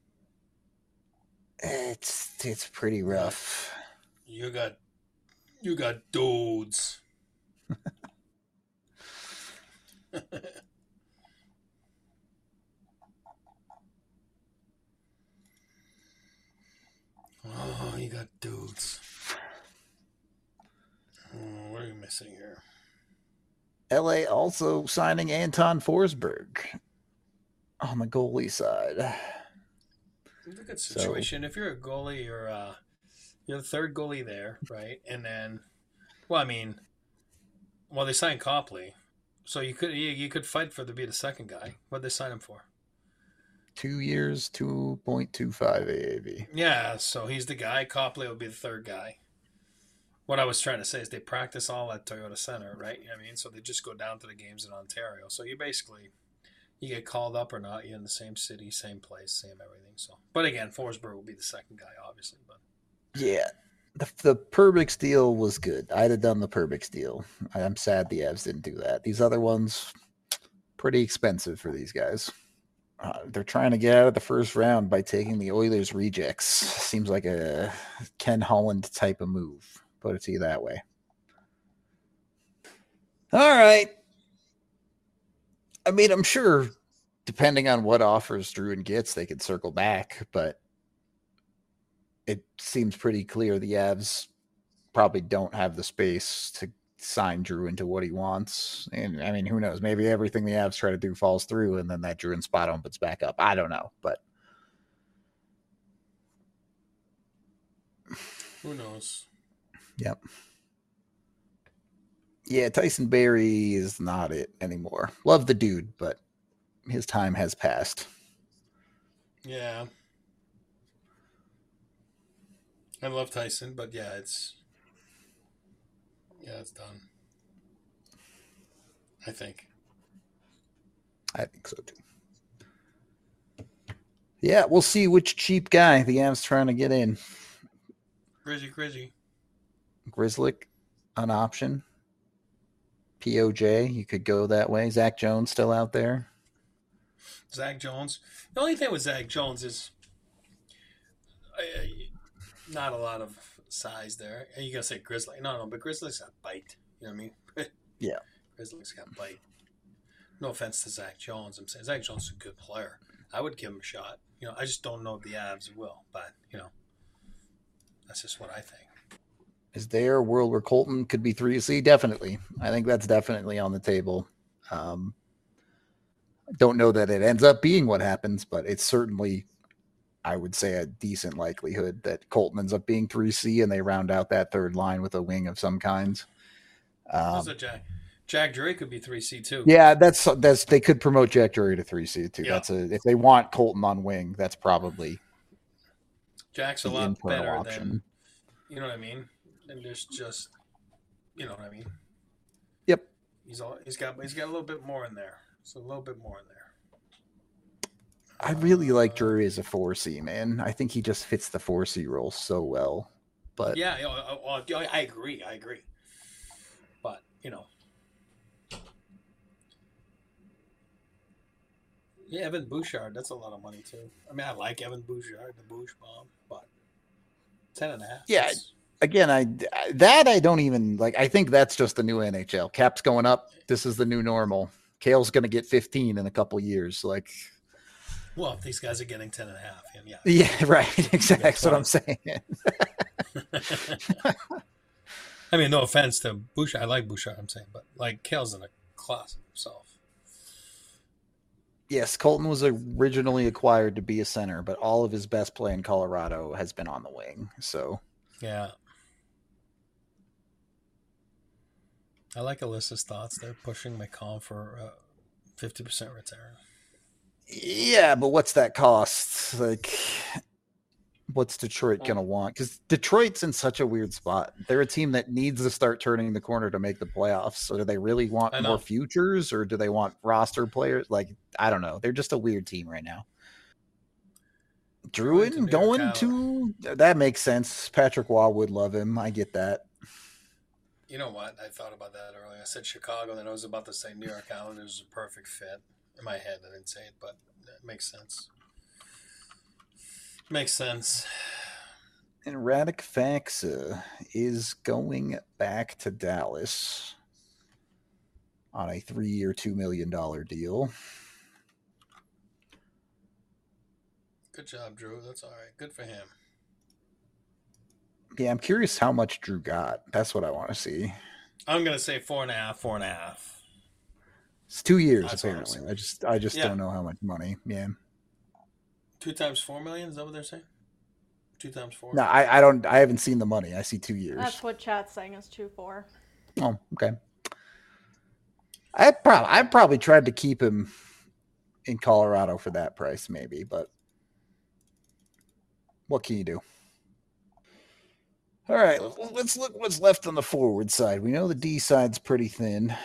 It's it's pretty You got, rough. you got, you got dudes. Oh, you got dudes. Oh, what are you missing here? L A also signing Anton Forsberg on the goalie side. It's a good So situation. If you're a goalie, you're uh, you're the third goalie there, right? And then, well, I mean, well, they signed Copley, so you could you, you could fight for to be the second guy. What did they sign him for? two years, two point two five A A V. Yeah, so he's the guy. Copley will be the third guy. What I was trying to say is they practice all at Toyota Center, right? I mean, so they just go down to the games in Ontario. So you basically you get called up or not, you're in the same city, same place, same everything. So, but again, Forsberg will be the second guy, obviously. But Yeah. The, the Perbix deal was good. I'd have done the Perbix deal. I'm sad the Avs didn't do that. These other ones, pretty expensive for these guys. Uh, they're trying to get out of the first round by taking the Oilers rejects. Seems like a Ken Holland type of move. Put it to you that way. All right. I mean, I'm sure, depending on what offers Druin gets, they could circle back, but it seems pretty clear the Avs probably don't have the space to sign Drew into what he wants. And I mean, who knows? Maybe everything the Avs try to do falls through, and then that Drew spot opens back up. I don't know, but who knows? Yep. Yeah, Tyson Berry is not it anymore. Love the dude, but his time has passed. Yeah. I love Tyson, but yeah, it's yeah, it's done. I think. I think so too. Yeah, we'll see which cheap guy the Avs trying to get in. Grizzy, Grizzy. Grizzlick, an option. P O J, you could go that way. Zach Jones still out there. Zach Jones. The only thing with Zach Jones is uh, not a lot of size there. And you gotta say Grizzly. No, no, but Grizzly's got bite. You know what I mean? Yeah. Grizzly's got bite. No offense to Zach Jones. I'm saying Zach Jones is a good player. I would give him a shot. You know, I just don't know if the Avs will. But, you know, that's just what I think. Is there a world where Colton could be three C? Definitely. I think that's definitely on the table. Um, don't know that it ends up being what happens, but it's certainly, I would say, a decent likelihood that Colton ends up being three C and they round out that third line with a wing of some kind. Um, a Jack. Jack Drury could be three C too. Yeah, that's that's they could promote Jack Drury to three C too. Yeah. That's a if they want Colton on wing, that's probably Jack's a the lot internal better option. than, you know what I mean? And there's just, you know what I mean? Yep. He's all he's got he's got a little bit more in there. So a little bit more in there. I really like Drury as a four C, man. I think he just fits the four C role so well. But yeah, I agree. I agree. But you know, yeah, Evan Bouchard. That's a lot of money too. I mean, I like Evan Bouchard, the Bouch bomb, but ten and a half. Yeah. Again, I that I don't even like. I think that's just the new N H L. Cap's going up. This is the new normal. Kale's going to get fifteen in a couple years. Like, well, if these guys are getting ten and a half, and yeah, yeah, right. Exactly. That's what I'm saying. I mean, no offense to Bouchard. I like Bouchard. I'm saying, but like Kale's in a class of himself. Yes, Colton was originally acquired to be a center, but all of his best play in Colorado has been on the wing. So, yeah. I like Alyssa's thoughts. They're pushing McCall for uh, fifty percent return. Yeah, but what's that cost? Like, what's Detroit going to want? Because Detroit's in such a weird spot. They're a team that needs to start turning the corner to make the playoffs. So do they really want more futures, or do they want roster players? Like, I don't know. They're just a weird team right now. Druin going to, that makes sense. Patrick Waugh would love him. I get that. You know what? I thought about that earlier. I said Chicago, then I was about to say New York Islanders is a perfect fit. In my head, I didn't say it, but it makes sense. Makes sense. And Radek Faksa is going back to Dallas on a three-year, two million dollars deal. Good job, Drew. That's all right. Good for him. Yeah, I'm curious how much Drew got. That's what I want to see. I'm gonna say four and a half, four and a half. It's two years That's apparently. I just, I just yeah. don't know how much money. Yeah. Two times four million. Is that what they're saying? Two times four. No, I, I don't. I haven't seen the money. I see two years. That's what chat's saying is two four. Oh, okay. I probably, I probably tried to keep him in Colorado for that price, maybe, but what can you do? All right, let's look what's left on the forward side. We know the D side's pretty thin.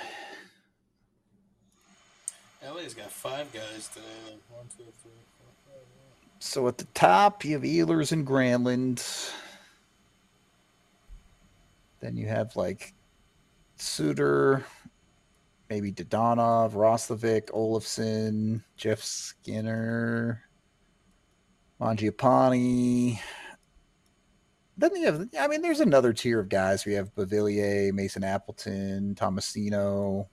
L A's got five guys today. One, two, three, four, five. Yeah. So at the top, you have Ehlers and Granlund. Then you have like Suter, maybe Dadonov, Roslovic, Olofsson, Jeff Skinner, Mangiapane. Then you have, I mean, there's another tier of guys. We have Beauvillier, Mason Appleton, Tomasino.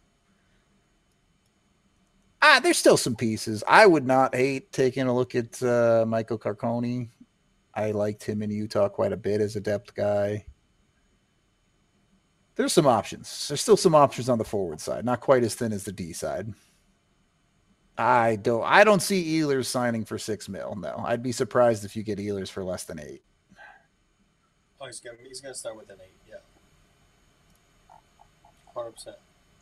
Ah, there's still some pieces. I would not hate taking a look at uh, Michael Carcone. I liked him in Utah quite a bit as a depth guy. There's some options. There's still some options on the forward side. Not quite as thin as the D side. I don't I don't see Ehlers signing for six mil. No. I'd be surprised if you get Ehlers for less than eight. Oh, he's gonna he's gonna start with an eight, yeah. one hundred percent.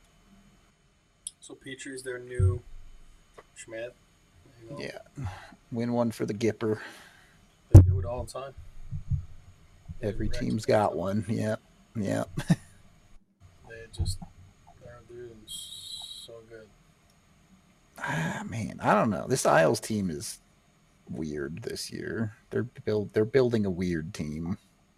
So Petrie's their new Schmidt. Yeah. Win one for the Gipper. They do it all the time. Every team's got one. Yep. Yep. They just they're doing so good. Ah, man, I don't know. This Isles team is weird this year. They're build they're building a weird team.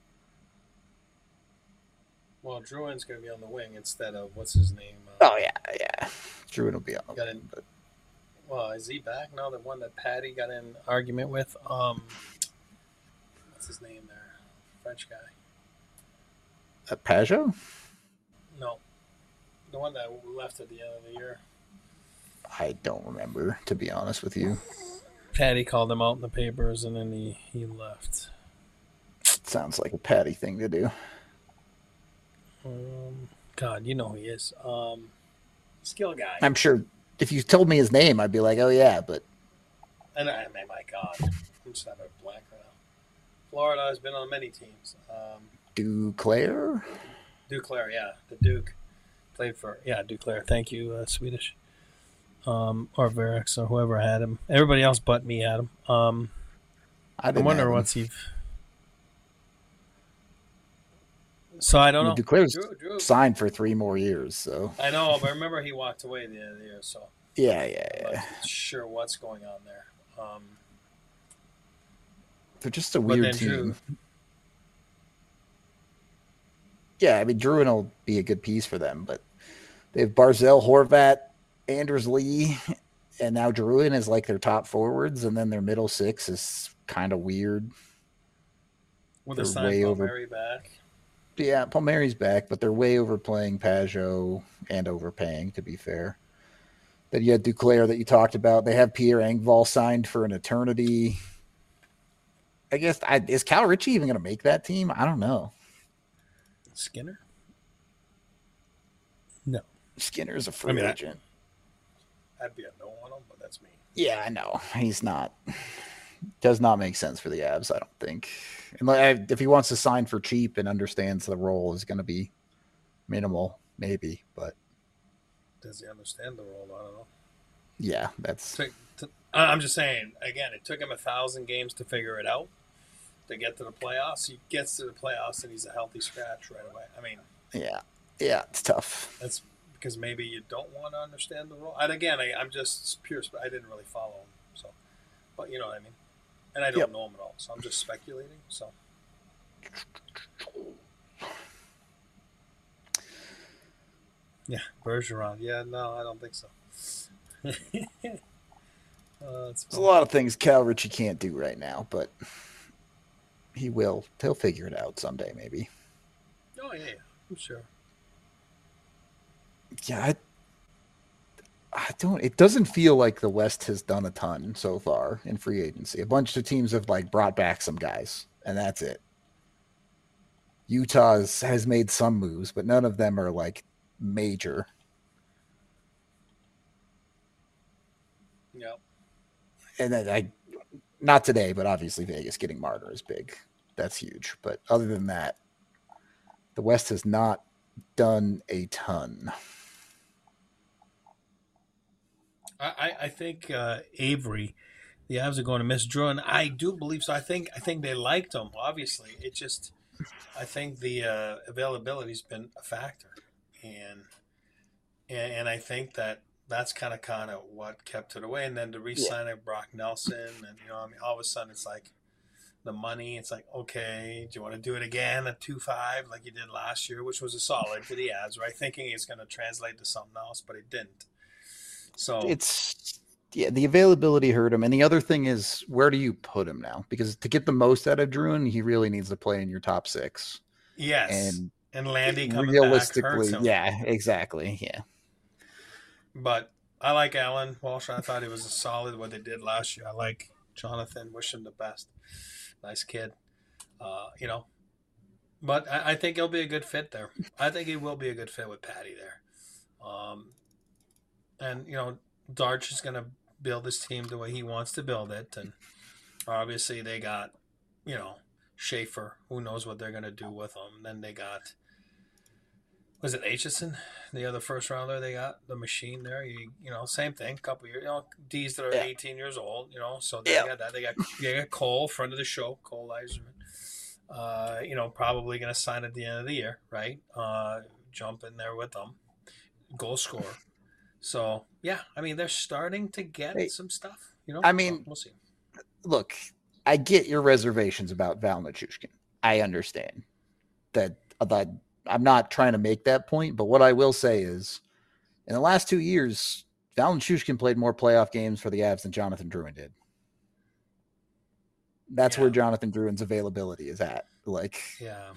Well, Drouin's going to be on the wing instead of what's his name? Uh, oh yeah, yeah. Drouin will be on the wing. In, but... Well, is he back now? The one that Patty got in argument with. Um, what's his name there? French guy. Uh, Pajot? No, the one that left at the end of the year. I don't remember, to be honest with you. Patty called him out in the papers, and then he, he left. Sounds like a Patty thing to do. Um, God, you know who he is. Um, skill guy. I'm sure if you told me his name, I'd be like, oh, yeah, but... And I mean, my God. I'm just having a blank right now. Florida has been on many teams. Um, Duclair? Duclair, yeah. The Duke. Played for... Yeah, Duclair. Thank you, uh, Swedish. Um, or Verex, or whoever had him. Everybody else but me had him. Um, I, I wonder what's he... So I don't know. Duclair's Drew, Drew. signed for three more years, so I know, but remember he walked away the other year, so yeah, yeah, I'm yeah. not sure what's going on there. Um, They're just a but weird then Drew, team. Yeah, I mean, Druin will be a good piece for them, but they have Barzell, Horvat, Anders Lee, and now Druin is like their top forwards, and then their middle six is kind of weird. with a They're sign way over. Palmieri back. Yeah, Palmieri's back, but they're way overplaying Pajot and overpaying, to be fair. Then you had Duclair that you talked about. They have Pierre Engvall signed for an eternity. I guess I, is Cal Ritchie even going to make that team? I don't know. Skinner? No. Skinner's a I free mean, I, agent. I'd be a no on him, but that's me. Yeah, I know. He's not. Does not make sense for the Avs, I don't think. And if he wants to sign for cheap and understands the role is going to be minimal, maybe. But Does he understand the role? I don't know. yeah, that's To, to, I'm just saying, again, it took him a thousand games to figure it out to get to the playoffs. He gets to the playoffs and he's a healthy scratch right away. I mean, yeah, yeah, it's tough. that's because maybe you don't want to understand the role. And again, I, I'm just pure. I didn't really follow him, so but you know what I mean. And I don't Yep. know him at all, so I'm just speculating. So yeah, Bergeron. Yeah, no, I don't think so. uh, that's There's a funny. lot of things Cal Ritchie can't do right now, but he will. He'll figure it out someday, maybe. Oh yeah, yeah, I'm sure. Yeah, I, I don't. It doesn't feel like the West has done a ton so far in free agency. A bunch of teams have like brought back some guys, and that's it. Utah has made some moves, but none of them are like major. Yeah. And then I, not today, but obviously Vegas getting Marner is big. That's huge. But other than that, the West has not done a ton. I, I think uh, Avery, the Avs are going to miss Drew, and I do believe so. I think I think they liked him. Obviously, it just I think the uh, availability's been a factor, and and, and I think that that's kind of kind of what kept it away. And then the Yeah. re-sign of Brock Nelson, and you know, I mean, all of a sudden it's like the money. It's like, okay, do you want to do it again at two five like you did last year, which was a solid for the Avs, right? Thinking it's going to translate to something else, but it didn't. So It's yeah, the availability hurt him. And the other thing is, where do you put him now? Because to get the most out of Druin, he really needs to play in your top six. yes, And and Landy coming back hurts realistically, him. yeah, exactly. Yeah. But I like Alan Walsh. I thought he was a solid what they did last year. I like Jonathan. Wish him the best. Nice kid. Uh, you know, but I, I think he'll be a good fit there. I think he will be a good fit with Patty there. Um, and you know, Darch is going to build his team the way he wants to build it, and obviously they got, you know, Schaefer. Who knows what they're going to do with him? Then they got was it Aitchison, the other first rounder they got, the machine there. You, you know, same thing. Couple years, you know, D's that are Yeah. eighteen years old. You know, so they Yeah. got that. They got they got Cole, friend of the show, Cole Eiserman. Uh, you know, probably going to sign at the end of the year, right? Uh, jump in there with them, goal scorer. So yeah, I mean they're starting to get Hey, some stuff. You know, I so mean, we'll see. look, I get your reservations about Val Nichushkin. I understand that, that I'm not trying to make that point, but what I will say is in the last two years, Val Nichushkin played more playoff games for the Avs than Jonathan Druin did. That's where Yeah, Jonathan Druin's availability is at. Like, yeah.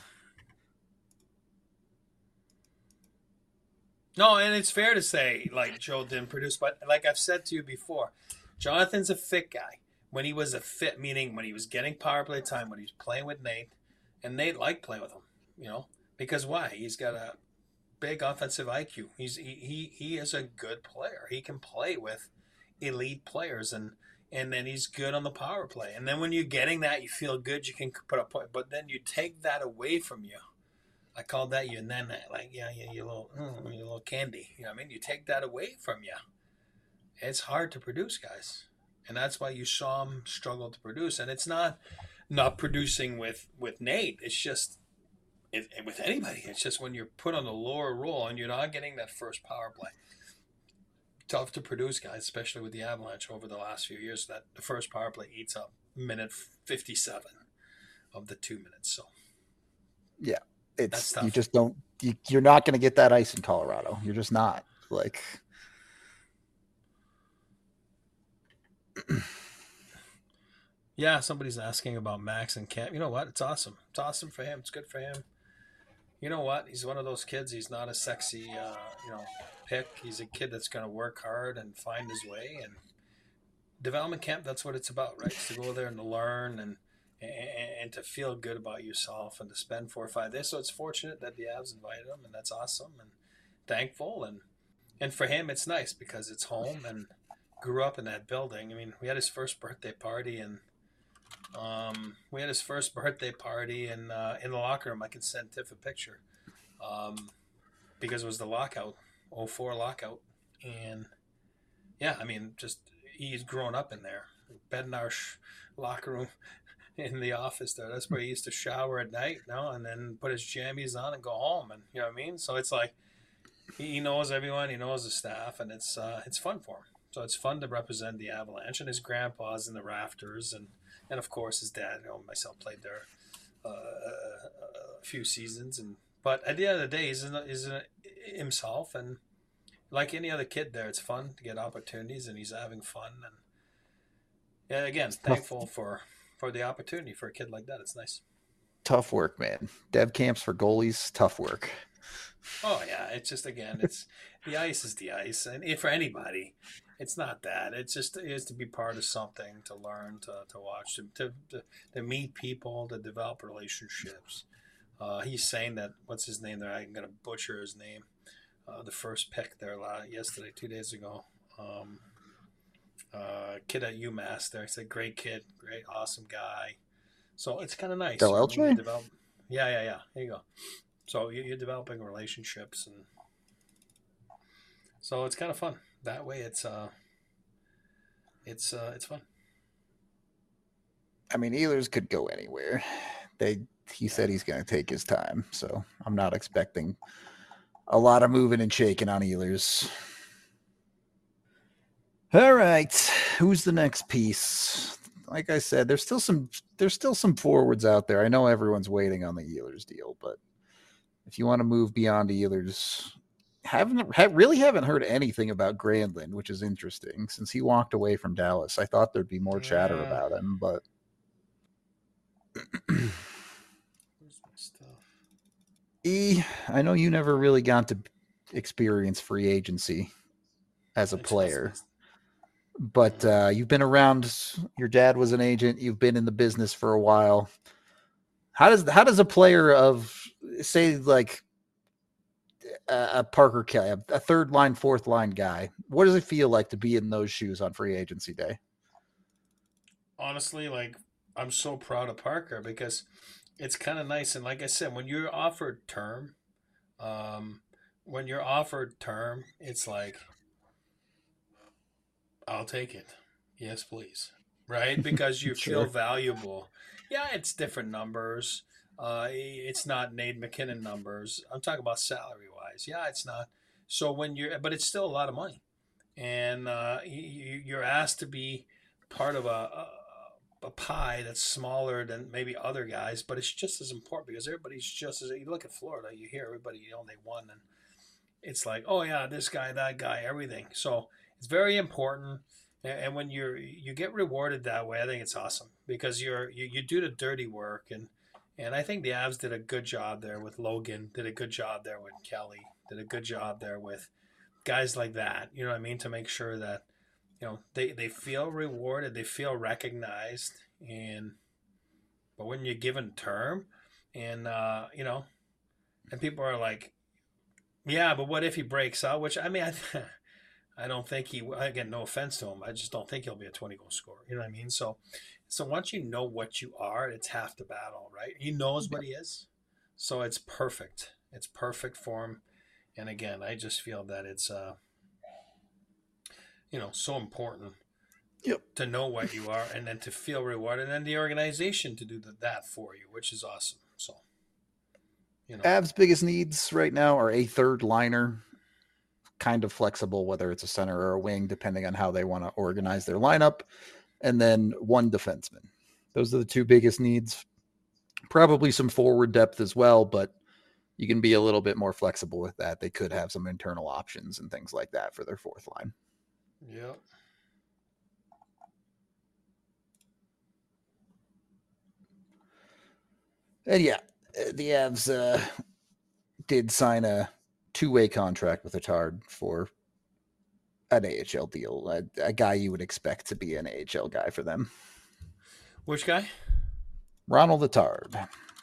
No, and it's fair to say like Joe didn't produce, but like I've said to you before, Jonathan's a fit guy. When he was a fit, meaning when he was getting power play time, when he was playing with Nate, and Nate liked playing with him, you know, because why? He's got a big offensive I Q. He's he he, he is a good player. He can play with elite players, and and then he's good on the power play. And then when you're getting that, you feel good. You can put up point, but then you take that away from you. I called that you nana, like yeah, yeah, you little, mm, you little candy. You know what I mean? You take that away from you. It's hard to produce, guys, and that's why you saw him struggle to produce. And it's not not producing with with Nate. It's just it, with anybody. It's just when you're put on the lower role and you're not getting that first power play. tough to produce guys, especially with the Avalanche over the last few years. That the first power play eats up minute fifty-seven of the two minutes. So yeah, that's it's you tough. just don't you, you're not going to get that ice in Colorado. You're just not like. Yeah, somebody's asking about Max and Cam. You know what? It's awesome. It's awesome for him. It's good for him. You know what? He's one of those kids. He's not a sexy, uh, you know, pick. He's a kid that's going to work hard and find his way. And development camp, that's what it's about, right? It's to go there and to learn and, and and to feel good about yourself and to spend four or five days. So it's fortunate that the Avs invited him, and that's awesome and thankful. And and for him, it's nice because it's home and grew up in that building. I mean, we had his first birthday party and um, we had his first birthday party in uh, in the locker room. I can send Tiff a picture um, because it was the lockout, oh four lockout, and yeah, I mean, just he's grown up in there. Bednar locker room in the office there. That's where he used to shower at night, you know, and then put his jammies on and go home, and you know what I mean. So it's like he knows everyone, he knows the staff, and it's uh, it's fun for him. So it's fun to represent the Avalanche, and his grandpa's in the rafters, and and of course his dad. You know, myself played there uh, a few seasons, and but at the end of the day, he's in, he's in himself, and like any other kid there, it's fun to get opportunities, and he's having fun, and yeah, again, Tough, thankful for for the opportunity for a kid like that. It's nice. tough work, man. Dev camps for goalies, tough work. Oh yeah, it's just again, it's the ice is the ice, and if for anybody, it's not that. It's just it is to be part of something, to learn, to, to watch, to, to to to meet people, to develop relationships. Uh, he's saying that what's his name there? I'm gonna butcher his name. Uh, the first pick there yesterday, two days ago. Um, uh, kid at UMass there. He's a great kid, great, awesome guy. So it's kind of nice. Del You know what I mean? You Eltre? develop. Yeah, yeah, yeah. There you go. So you- you're developing relationships, and so it's kind of fun. That way, it's uh, it's uh, it's fun. I mean, Ehlers could go anywhere. They he said he's going to take his time, so I'm not expecting a lot of moving and shaking on Ehlers. All right, who's the next piece? Like I said, there's still some there's still some forwards out there. I know everyone's waiting on the Ehlers deal, but if you want to move beyond Ehlers, haven't ha, really haven't heard anything about Granlund, which is interesting since he walked away from Dallas. I thought there'd be more chatter Yeah. about him, but Where's my stuff? E, I know you never really got to experience free agency as a It's player, just- but uh, you've been around. Your dad was an agent. You've been in the business for a while. How does how does a player of say like a, a Parker Kelly, a, a third line, fourth line guy, what does it feel like to be in those shoes on free agency day? honestly, like I'm so proud of Parker because it's kind of nice. And like I said, when you're offered term, um, when you're offered term, it's like I'll take it. Yes, please. Right? Because you feel Sure. valuable. Yeah, it's different numbers. Uh, it's not Nate McKinnon numbers. I'm talking about salary wise. Yeah, it's not. So when you're, but it's still a lot of money, and uh, you, you're asked to be part of a, a a pie that's smaller than maybe other guys, but it's just as important because everybody's just as you look at Florida, you hear everybody, you know, they won, and it's like, oh yeah, this guy, that guy, everything. So it's very important. And when you're you get rewarded that way, I think it's awesome because you're you, you do the dirty work, and and I think the Avs did a good job there with Logan, did a good job there with Kelly, did a good job there with guys like that. You know what I mean? To make sure that you know they, they feel rewarded, they feel recognized, and but when you're given term, and uh, you know, and people are like, yeah, but what if he breaks out? Which I mean, I, I don't think he. Again, no offense to him, I just don't think he'll be a twenty goal scorer. You know what I mean? So, so once you know what you are, it's half the battle, right? He knows what he is, so it's perfect. It's perfect for him. And again, I just feel that it's uh, you know, so important Yep. to know what you are, and then to feel rewarded, and then the organization to do the, that for you, which is awesome. So, you know, Avs' biggest needs right now are a third liner. kind of flexible, whether it's a center or a wing, depending on how they want to organize their lineup. And then one defenseman. Those are the two biggest needs. Probably some forward depth as well, but you can be a little bit more flexible with that. They could have some internal options and things like that for their fourth line. Yeah. And yeah, the Avs uh, did sign a two-way contract with Attard for an A H L deal, a, a guy you would expect to be an A H L guy for them. Which guy? Ronald Attard.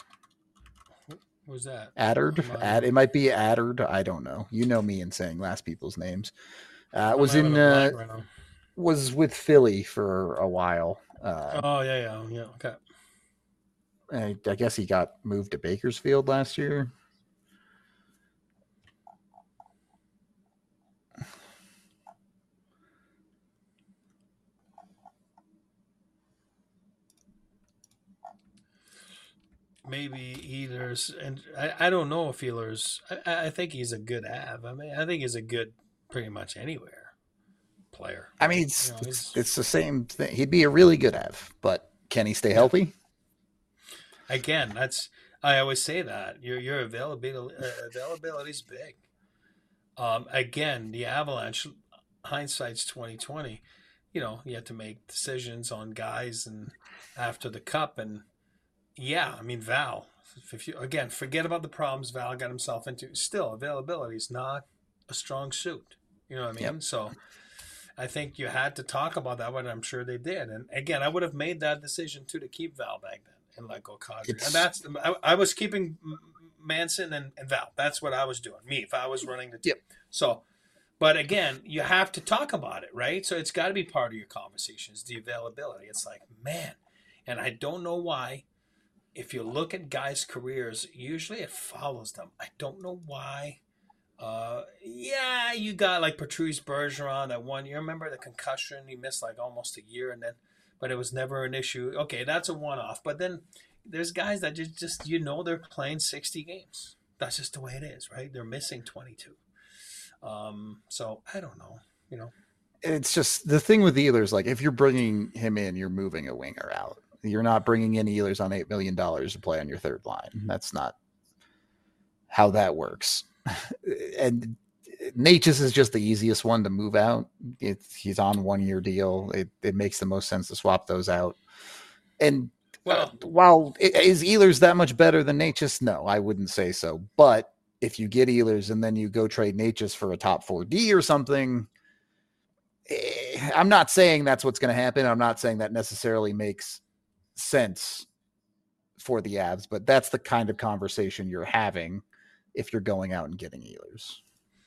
Who's that? Addard? Ad, it might be Addard. I don't know. You know me in saying last people's names. Uh, was in uh, right was with Philly for a while. Uh, oh yeah, yeah, yeah. Okay. I, I guess he got moved to Bakersfield last year. Maybe Ehlers, and I, I don't know if Ehlers. I, I think he's a good Av. I mean, I think he's a good pretty much anywhere player. I mean, it's, you know, it's it's the same thing. He'd be a really good Av, but can he stay healthy? Again, that's I always say that your your availability uh, availability is big. Um, again, the Avalanche, hindsight's twenty twenty. You know, you have to make decisions on guys and after the cup and. Yeah, I mean, Val, if you, again, forget about the problems Val got himself into. Still, availability is not a strong suit. You know what I mean? Yep. So I think you had to talk about that, but I'm sure they did. And again, I would have made that decision, too, to keep Val back then and let go Kadri. And that's, I, I was keeping Manson and, and Val. That's what I was doing, me, if I was running the team. Yep. So, but again, you have to talk about it, right? So it's got to be part of your conversations, the availability. It's like, man, and I don't know why. If you look at guys' careers, usually it follows them. I don't know why. Uh, yeah, you got like Patrice Bergeron that one year. Remember the concussion? He missed like almost a year, and then, but it was never an issue. Okay, that's a one-off. But then there's guys that just, just you know, they're playing sixty games. That's just the way it is, right? They're missing twenty-two. Um, so I don't know. You know, it's just the thing with Ehlers. Like if you're bringing him in, you're moving a winger out. You're not bringing in Ehlers on eight million dollars to play on your third line. That's not how that works. And Natchez is just the easiest one to move out. It, he's on one year deal. It, it makes the most sense to swap those out. And well, uh, while is Ehlers that much better than Natchez? No, I wouldn't say so. But if you get Ehlers and then you go trade Natchez for a top four D or something, eh, I'm not saying that's what's going to happen. I'm not saying that necessarily makes sense for the Avs, but that's the kind of conversation you're having if you're going out and getting Ehlers.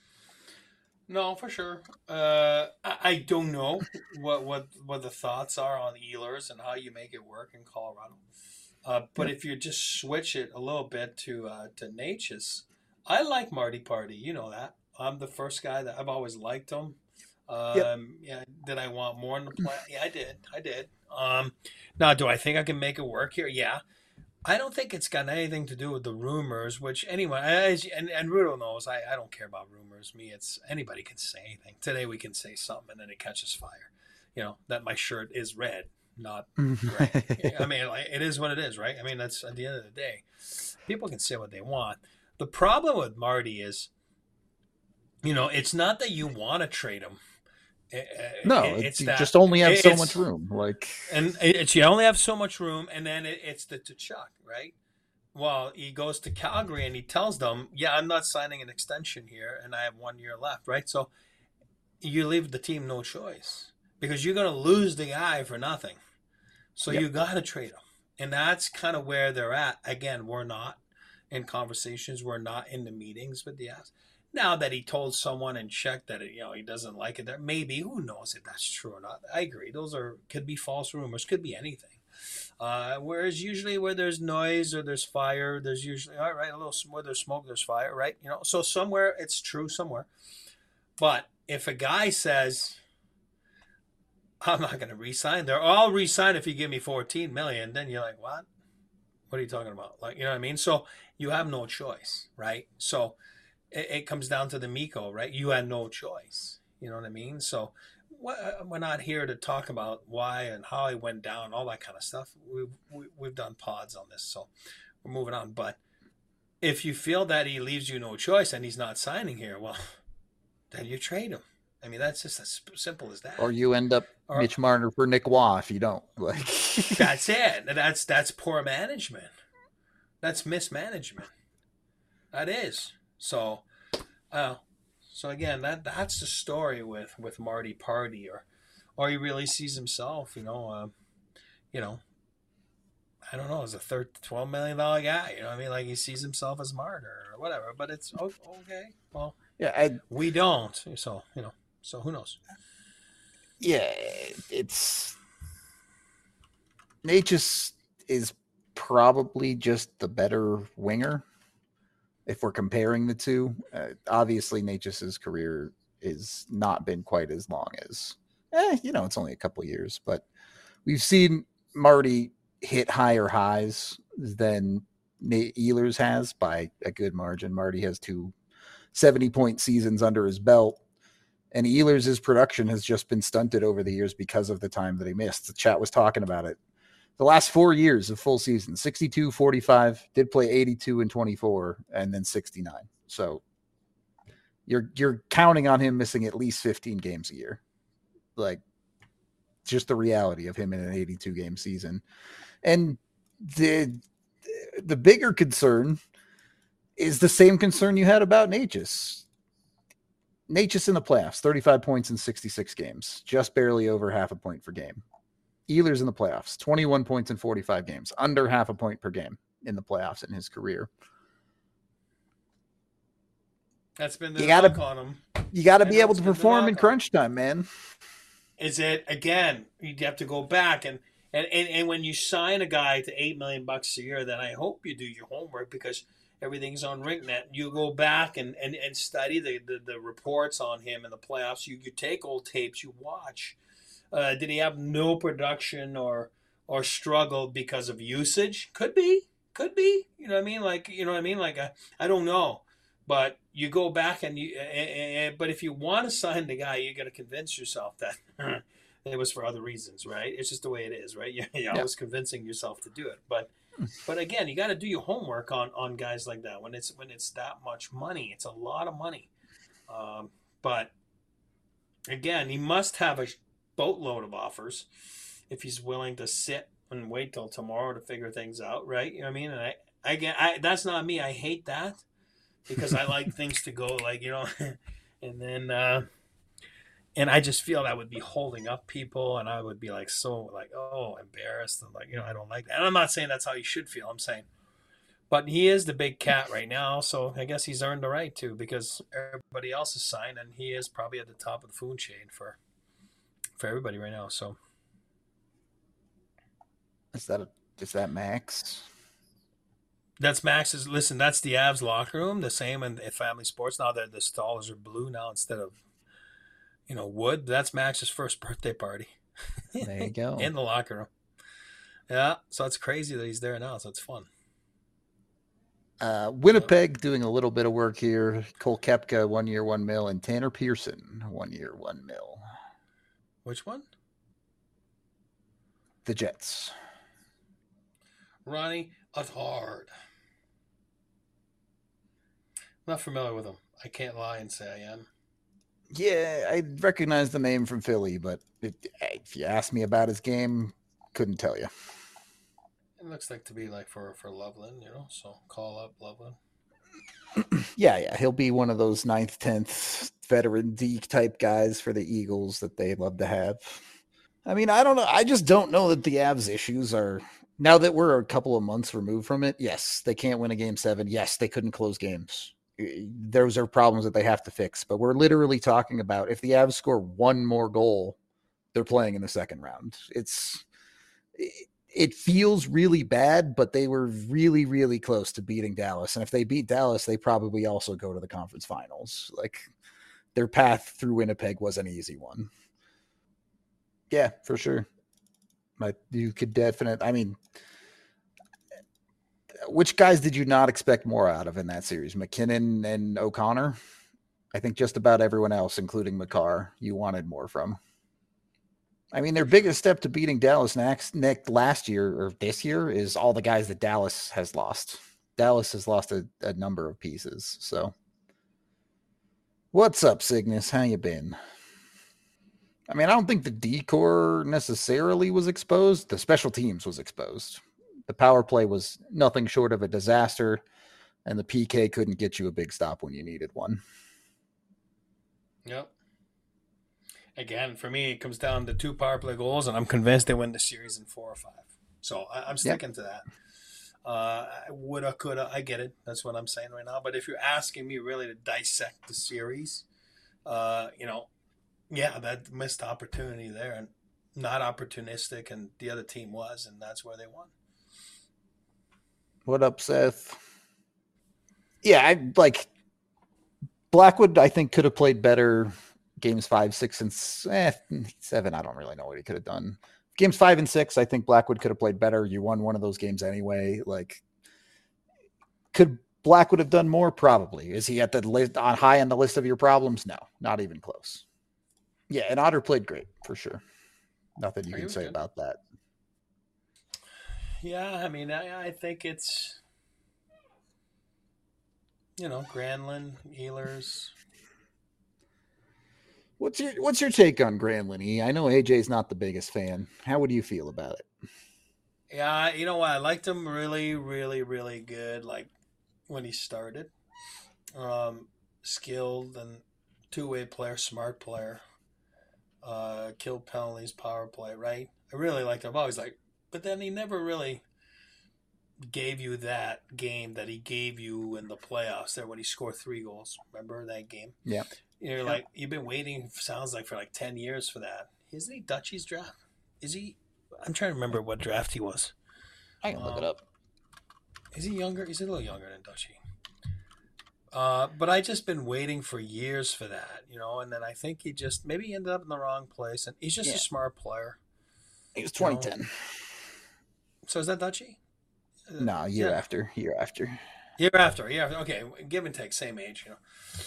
No, for sure. Uh, I, I don't know what, what what the thoughts are on Ehlers and how you make it work in Colorado. Uh, but yep. If you just switch it a little bit to uh, to Natchez, I like Marty Party. You know that. I'm the first guy that I've always liked him. Um, yep. Yeah, did I want more in the plan? Yeah, I did. I did. Um, now, do I think I can make it work here? Yeah. I don't think it's got anything to do with the rumors, which anyway, as, and, and Rudo knows, I, I don't care about rumors. Me, it's anybody can say anything. Today we can say something and then it catches fire. You know, that my shirt is red, not gray. I mean, like, it is what it is, right? I mean, that's at the end of the day. People can say what they want. The problem with Marty is, you know, it's not that you want to trade him. No, it's you that, just only have so much room. Like, and it's you only have so much room, and then it, it's the Tkachuk, right? Well, he goes to Calgary and he tells them, "Yeah, I'm not signing an extension here, and I have one year left." Right? So you leave the team no choice because you're going to lose the guy for nothing. So yep. You got to trade him, and that's kind of where they're at. Again, we're not in conversations. We're not in the meetings with the Avs. Now that he told someone and checked that it, you know he doesn't like it, that maybe who knows if that's true or not. I agree; those are could be false rumors, could be anything. Uh, whereas usually where there's noise or there's fire, there's usually all right. A little where there's smoke, there's fire, right? You know, so somewhere it's true somewhere. But if a guy says, "I'm not going to re-sign," they're all re-sign if you give me fourteen million. Then you're like, "What? What are you talking about?" Like, you know what I mean? So you have no choice, right? So. it, it comes down to the Miko, right? You had no choice. You know what I mean? So we're not here to talk about why and how it went down, all that kind of stuff. We've we, we've done pods on this, so we're moving on. But if you feel that he leaves you no choice and he's not signing here, well, then you trade him. I mean, that's just as simple as Or that. you end up Or Mitch Marner for Nick Waugh if you don't. Like that's it. That's that's poor management. That's mismanagement. That is. So, uh, so again, that that's the story with with Marty Party, or or he really sees himself, you know, uh, you know, I don't know, as a third twelve million dollar guy. You know what I mean? Like he sees himself as martyr or whatever. But it's okay. Well, yeah, I, we don't. So you know. So who knows? yeah, it's Natchez is probably just the better winger if we're comparing the two. Uh, obviously, Natchez's career has not been quite as long as, eh, you know, it's only a couple of years, but we've seen Marty hit higher highs than Nate Ehlers has by a good margin. Marty has two seventy point seasons under his belt. And Ehlers' production has just been stunted over the years because of the time that he missed. The chat was talking about it. The last four years of full season, sixty-two, forty-five, did play eighty-two and twenty-four, and then sixty-nine. So you're you're counting on him missing at least fifteen games a year. Like, just the reality of him in an eighty-two game season. And the the bigger concern is the same concern you had about Natchez. Natchez in the playoffs, thirty-five points in sixty-six games, just barely over half a point per game. Ehlers in the playoffs, twenty-one points in forty-five games, under half a point per game in the playoffs in his career. That's been the You knock gotta, on him. you gotta I be know able it's to been the perform in knock on him. crunch time, man. Is it again? You have to go back and and, and, and when you sign a guy to eight million bucks a year, then I hope you do your homework because everything's on RinkNet. You go back and, and, and study the, the, the reports on him in the playoffs. You you take old tapes, you watch. Uh, did he have no production or or struggle because of usage? Could be, could be. You know what I mean? Like you know what I mean? Like I, I don't know, but you go back and you. And, but if you want to sign the guy, you got to convince yourself that it was for other reasons, right? It's just the way it is, right? You're, you're Yeah. always convincing yourself to do it, but but again, you got to do your homework on on guys like that when it's when it's that much money. It's a lot of money, um, but again, he must have a boatload of offers if he's willing to sit and wait till tomorrow to figure things out, right? You know what I mean? And I, I get, I that's not me. I hate that because I like things to go like you know, and then. Uh, and I just feel that would be holding up people, and I would be like so like oh embarrassed and like you know I don't like that. And I'm not saying that's how you should feel. I'm saying, but he is the big cat right now, so I guess he's earned the right to because everybody else is signed, and he is probably at the top of the food chain for for everybody right now. So Is that a, is that Max? that's Max's. Listen, that's the Avs locker room. The same in, in Family Sports now that the stalls are blue now instead of you know wood. That's Max's first birthday party. There you go. In the locker room. Yeah, so it's crazy that he's there now. So it's fun. Uh, Winnipeg doing a little bit of work here. Cole Kepka, one year, one mil, and Tanner Pearson, one year, one mil. Which one? The Jets. Ronnie Attard. Not familiar with him. I can't lie and say I am. Yeah, I recognize the name from Philly, but it, if you ask me about his game, couldn't tell you. It looks like to be like for for Loveland, you know. So call up Loveland. yeah, yeah, he'll be one of those ninth, tenth veteran D type guys for the Eagles that they love to have. I mean, I don't know. I just don't know that the Avs issues are now that we're a couple of months removed from it. Yes, they can't win a game seven. Yes, they couldn't close games. Those are problems that they have to fix. But we're literally talking about if the Avs score one more goal, they're playing in the second round. It's it, it feels really bad, but they were really, really close to beating Dallas. And if they beat Dallas, they probably also go to the conference finals. Like their path through Winnipeg was an easy one. Yeah, for sure. But you could definitely, I mean, which guys did you not expect more out of in that series? McKinnon and O'Connor? I think just about everyone else, including Makar, you wanted more from. I mean, their biggest step to beating Dallas next, next last year or this year is all the guys that Dallas has lost. Dallas has lost a, a number of pieces. So, what's up, Cygnus? How you been? I mean, I don't think the D-core necessarily was exposed. The special teams was exposed. The power play was nothing short of a disaster, and the P K couldn't get you a big stop when you needed one. Yep. Again, for me, it comes down to two power play goals, and I'm convinced they win the series in four or five. So I, I'm sticking yep. to that. Uh, woulda, coulda, I get it. That's what I'm saying right now. But if you're asking me really to dissect the series, uh, you know, yeah, that missed opportunity there, and not opportunistic, and the other team was, and that's where they won. What up, Seth? Yeah, I like Blackwood. I think could have played better. Games five, six, and eh, seven. I don't really know what he could have done. Games five and six, I think Blackwood could have played better. You won one of those games anyway. Like, could Blackwood have done more? Probably. Is he at the list on high on the list of your problems? No, not even close. Yeah, and Otter played great for sure. Nothing you can say good. about that. Yeah, I mean, I, I think it's you know Granlund, Ehlers. What's your What's your take on Granlund? I know A J's not the biggest fan. How would you feel about it? Yeah, you know what? I liked him really, really, really good. Like when he started, um, skilled and two way player, smart player, uh, killed penalties, power play. Right? I really liked him. I've always like, but then he never really gave you that game that he gave you in the playoffs there when he scored three goals. Remember that game? Yeah. You're like, you've been waiting, sounds like, for like ten years for that. Isn't he Dutchy's draft? Is he? I'm trying to remember what draft he was. I can um, look it up. Is he younger? He's a little younger than Dutchy. Uh, but I just been waiting for years for that, you know, and then I think he just, maybe he ended up in the wrong place, and he's just yeah. a smart player. He was twenty ten. You know? So is that Dutchy? No, year yeah. after, year after. Year after, year after. Okay, give and take, same age, you know.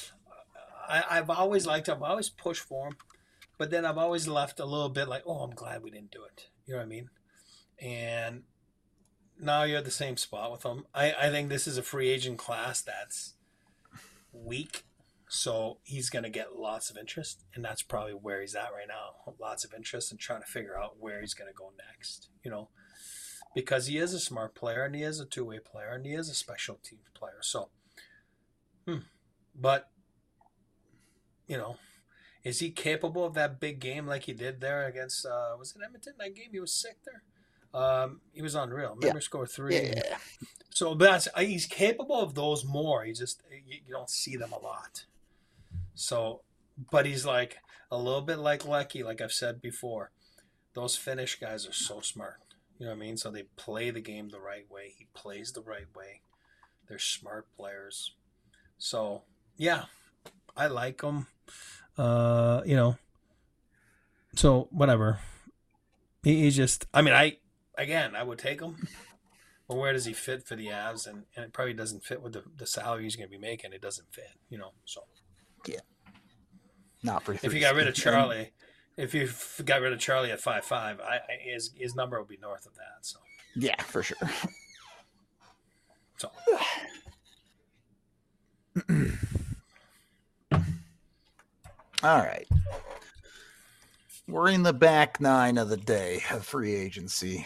I, I've always liked him. I always pushed for him. But then I've always left a little bit like, oh, I'm glad we didn't do it. You know what I mean? And now you're at the same spot with him. I, I think this is a free agent class that's weak. So he's going to get lots of interest. And that's probably where he's at right now. Lots of interest and trying to figure out where he's going to go next. You know? Because he is a smart player and he is a two-way player and he is a special teams player. So, hmm. But, you know, is he capable of that big game like he did there against, uh, was it Edmonton? That game he was sick there. Um, he was unreal. Remember, yeah. score three. Yeah. So that's he's capable of those more. He just you, you don't see them a lot. So, but he's like a little bit like Lecky, like I've said before. Those Finnish guys are so smart. You know what I mean? So they play the game the right way. He plays the right way. They're smart players. So yeah, I like them. Uh, you know, so whatever. He, he's just, I mean, I, again, I would take him, but where does he fit for the Avs? And, and it probably doesn't fit with the, the salary he's going to be making. It doesn't fit, you know, so. Yeah. Not for If you got rid of Charlie, if you got rid of Charlie at five five, I, I, his, his number would be north of that, so. Yeah, for sure. So. All right. We're in the back nine of the day of free agency.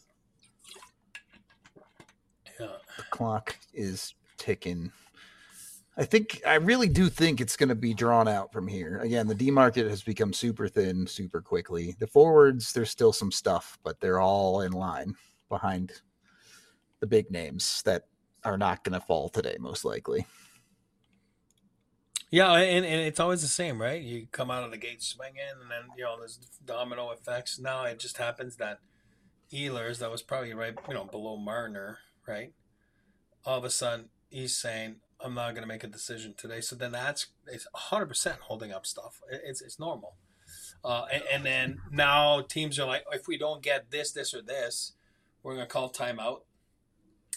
Yeah. The clock is ticking. I think, I really do think it's going to be drawn out from here. Again, the D market has become super thin super quickly. The forwards, there's still some stuff, but they're all in line behind the big names that are not going to fall today, most likely. Yeah, and, and it's always the same, right? You come out of the gate swinging, and then, you know, there's domino effects. Now it just happens that Ehlers, that was probably right, you know, below Marner, right? All of a sudden, he's saying, I'm not going to make a decision today. So then that's it's one hundred percent holding up stuff. It's it's normal. Uh, and, and then now teams are like, if we don't get this, this, or this, we're going to call timeout.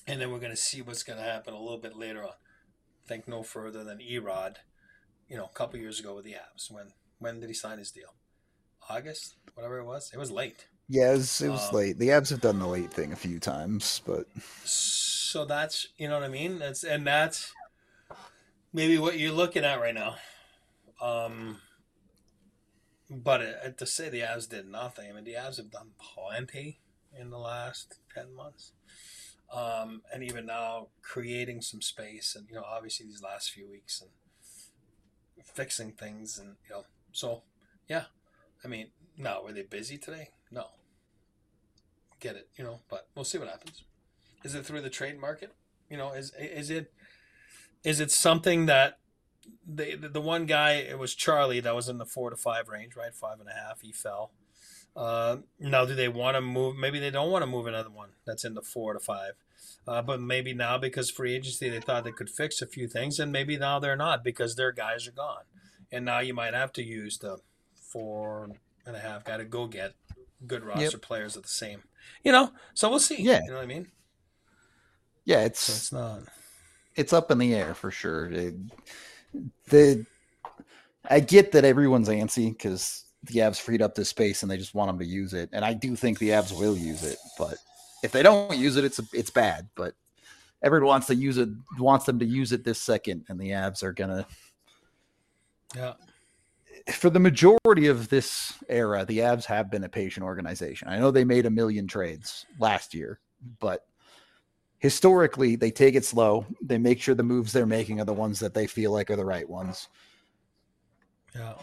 and then we're going to see what's going to happen a little bit later on. Think no further than Erod, you know, a couple years ago with the Avs. When when did he sign his deal? August, whatever it was. It was late. Yeah, it was, it was Um, late. The Avs have done the late thing a few times, but so that's you know what I mean. That's and that's maybe what you're looking at right now. Um, but it, to say the Avs did nothing, I mean the Avs have done plenty in the last ten months. Um, and even now creating some space and you know obviously these last few weeks and fixing things and you know so yeah, I mean, no, were they busy today? No, get it, you know, but we'll see what happens. Is it through the trade market? You know, is is it is it something that the the one guy, it was Charlie, that was in the four to five range, right? Five and a half. He fell. Uh, now, do they want to move? Maybe they don't want to move another one that's in the four to five. Uh, but maybe now because free agency, they thought they could fix a few things, and maybe now they're not because their guys are gone, and now you might have to use the four and a half guy to go get good yep, roster players at the same. You know, so we'll see. yeah, You know what I mean? yeah, So it's it's not. it's up in the air for sure. It, the I get that everyone's antsy because the Avs freed up this space and they just want them to use it, and I do think the Avs will use it. But if they don't use it, it's it's bad. But everyone wants to use it, wants them to use it this second, and the Avs are gonna. Yeah. For the majority of this era, the Avs have been a patient organization. I know they made a million trades last year, but historically, they take it slow. They make sure the moves they're making are the ones that they feel like are the right ones. Yeah.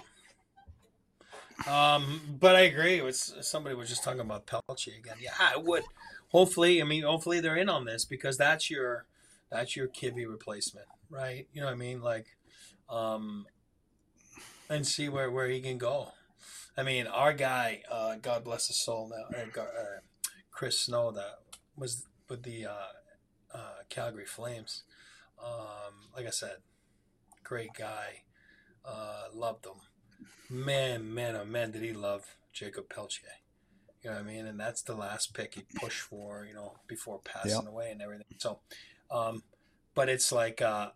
Um, but I agree. With somebody was just talking about Pelche again. Yeah, I would. Hopefully, I mean, hopefully they're in on this because that's your that's your Kivy replacement, right? You know what I mean? Like, um, and see where where he can go. I mean, our guy, uh, God bless his soul now, uh, uh, Chris Snow, that was with the uh, uh, Calgary Flames. Um, like I said, great guy. Uh, loved him. Man, man, oh man, did he love Jacob Pelche. You know what I mean? And that's the last pick he pushed for, you know, before Yeah. passing away and everything. So, um, but it's like, uh,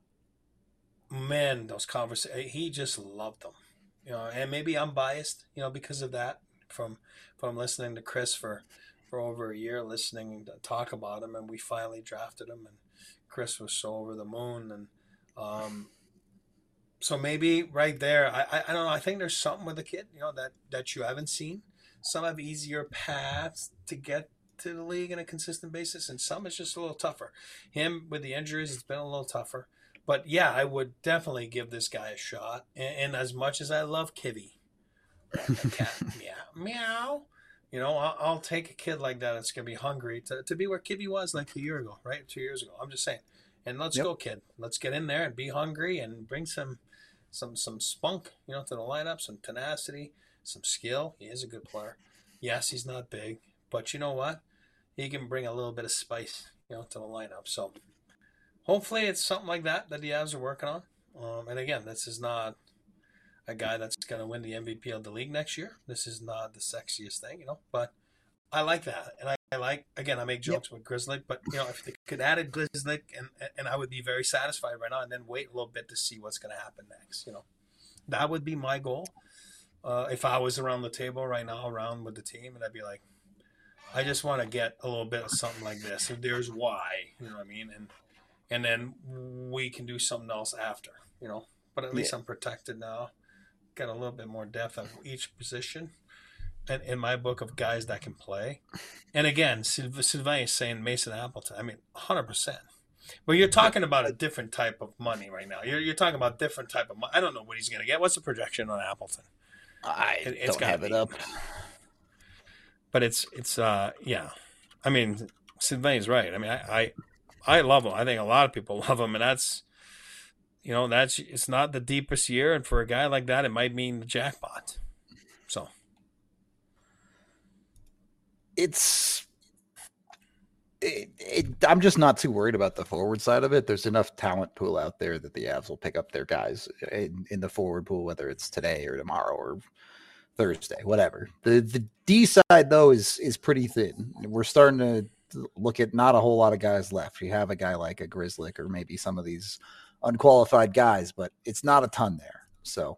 man, those conversations, he just loved them, you know, and maybe I'm biased, you know, because of that from, from listening to Chris for, for over a year, listening to talk about him. And we finally drafted him and Chris was so over the moon. And, um, so maybe right there, I, I I don't know. I think there's something with the kid, you know, that that you haven't seen. Some have easier paths to get to the league on a consistent basis, and some is just a little tougher. Him with the injuries, it's been a little tougher. But yeah, I would definitely give this guy a shot. And, and as much as I love Kivy, that, that cat, meow, meow. You know, I'll, I'll take a kid like that that's going to be hungry to, to be where Kibby was like a year ago, right? Two years ago. I'm just saying. And let's Yep. go, kid. Let's get in there and be hungry and bring some some some spunk, you know, to the lineup, some tenacity, some skill. He is a good player. Yes, he's not big, but you know what? He can bring a little bit of spice, you know, to the lineup. So hopefully it's something like that that the Avs are working on. Um, and again, this is not a guy that's going to win the M V P of the league next year. This is not the sexiest thing, you know, but I like that. And I, I like, again, I make Yep. jokes with Grizzly, but, you know, if they could add a Grizzly, and, and I would be very satisfied right now and then wait a little bit to see what's going to happen next, you know. That would be my goal. Uh, if I was around the table right now, around with the team, and I'd be like, I just want to get a little bit of something like this. If there's why, you know what I mean? And and then we can do something else after, you know. But at Yeah. least I'm protected now. Got a little bit more depth of each position. And in my book of guys that can play. And again, Sylvain is saying Mason Appleton. I mean, one hundred percent. But you're Yep. talking about a different type of money right now. You're, you're talking about different type of money. I don't know what he's going to get. What's the projection on Appleton? I It, it's don't got to have it be. up. But it's, it's uh, yeah. I mean, Sylvain's right. I mean, I, I, I love him. I think a lot of people love him. And that's, you know, that's, it's not the deepest year. And for a guy like that, it might mean the jackpot. So. It's it, it, I'm just not too worried about the forward side of it. There's enough talent pool out there that the Avs will pick up their guys in, in the forward pool, whether it's today or tomorrow or Thursday, whatever. The the D side though is is pretty thin. We're starting to look at not a whole lot of guys left. You have a guy like a Grizzly or maybe some of these unqualified guys, but it's not a ton there. So,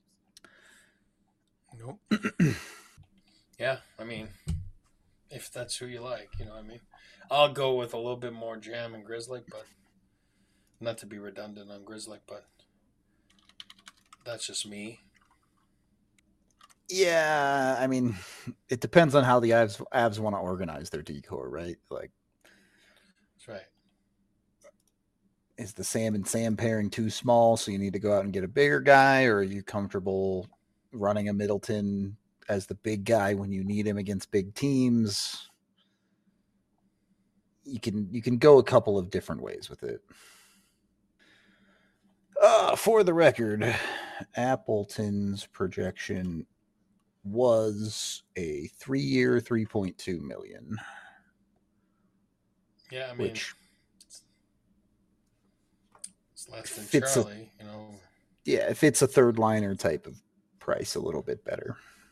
nope. Yeah, I mean, if that's who you like, you know what I mean? I'll go with a little bit more Jam and Grizzly, but not to be redundant on Grizzly, but that's just me. Yeah, I mean, it depends on how the Avs, Avs want to organize their decor, right? Like, that's right. Is the Sam and Sam pairing too small, so you need to go out and get a bigger guy, or are you comfortable running a Middleton as the big guy when you need him against big teams? You can you can go a couple of different ways with it. Uh, for the record, Appleton's projection was a three-year, three point two million. Yeah, I mean, which it's, it's less than Charlie, a, you know. Yeah, if it's a third liner type of price, a little bit better.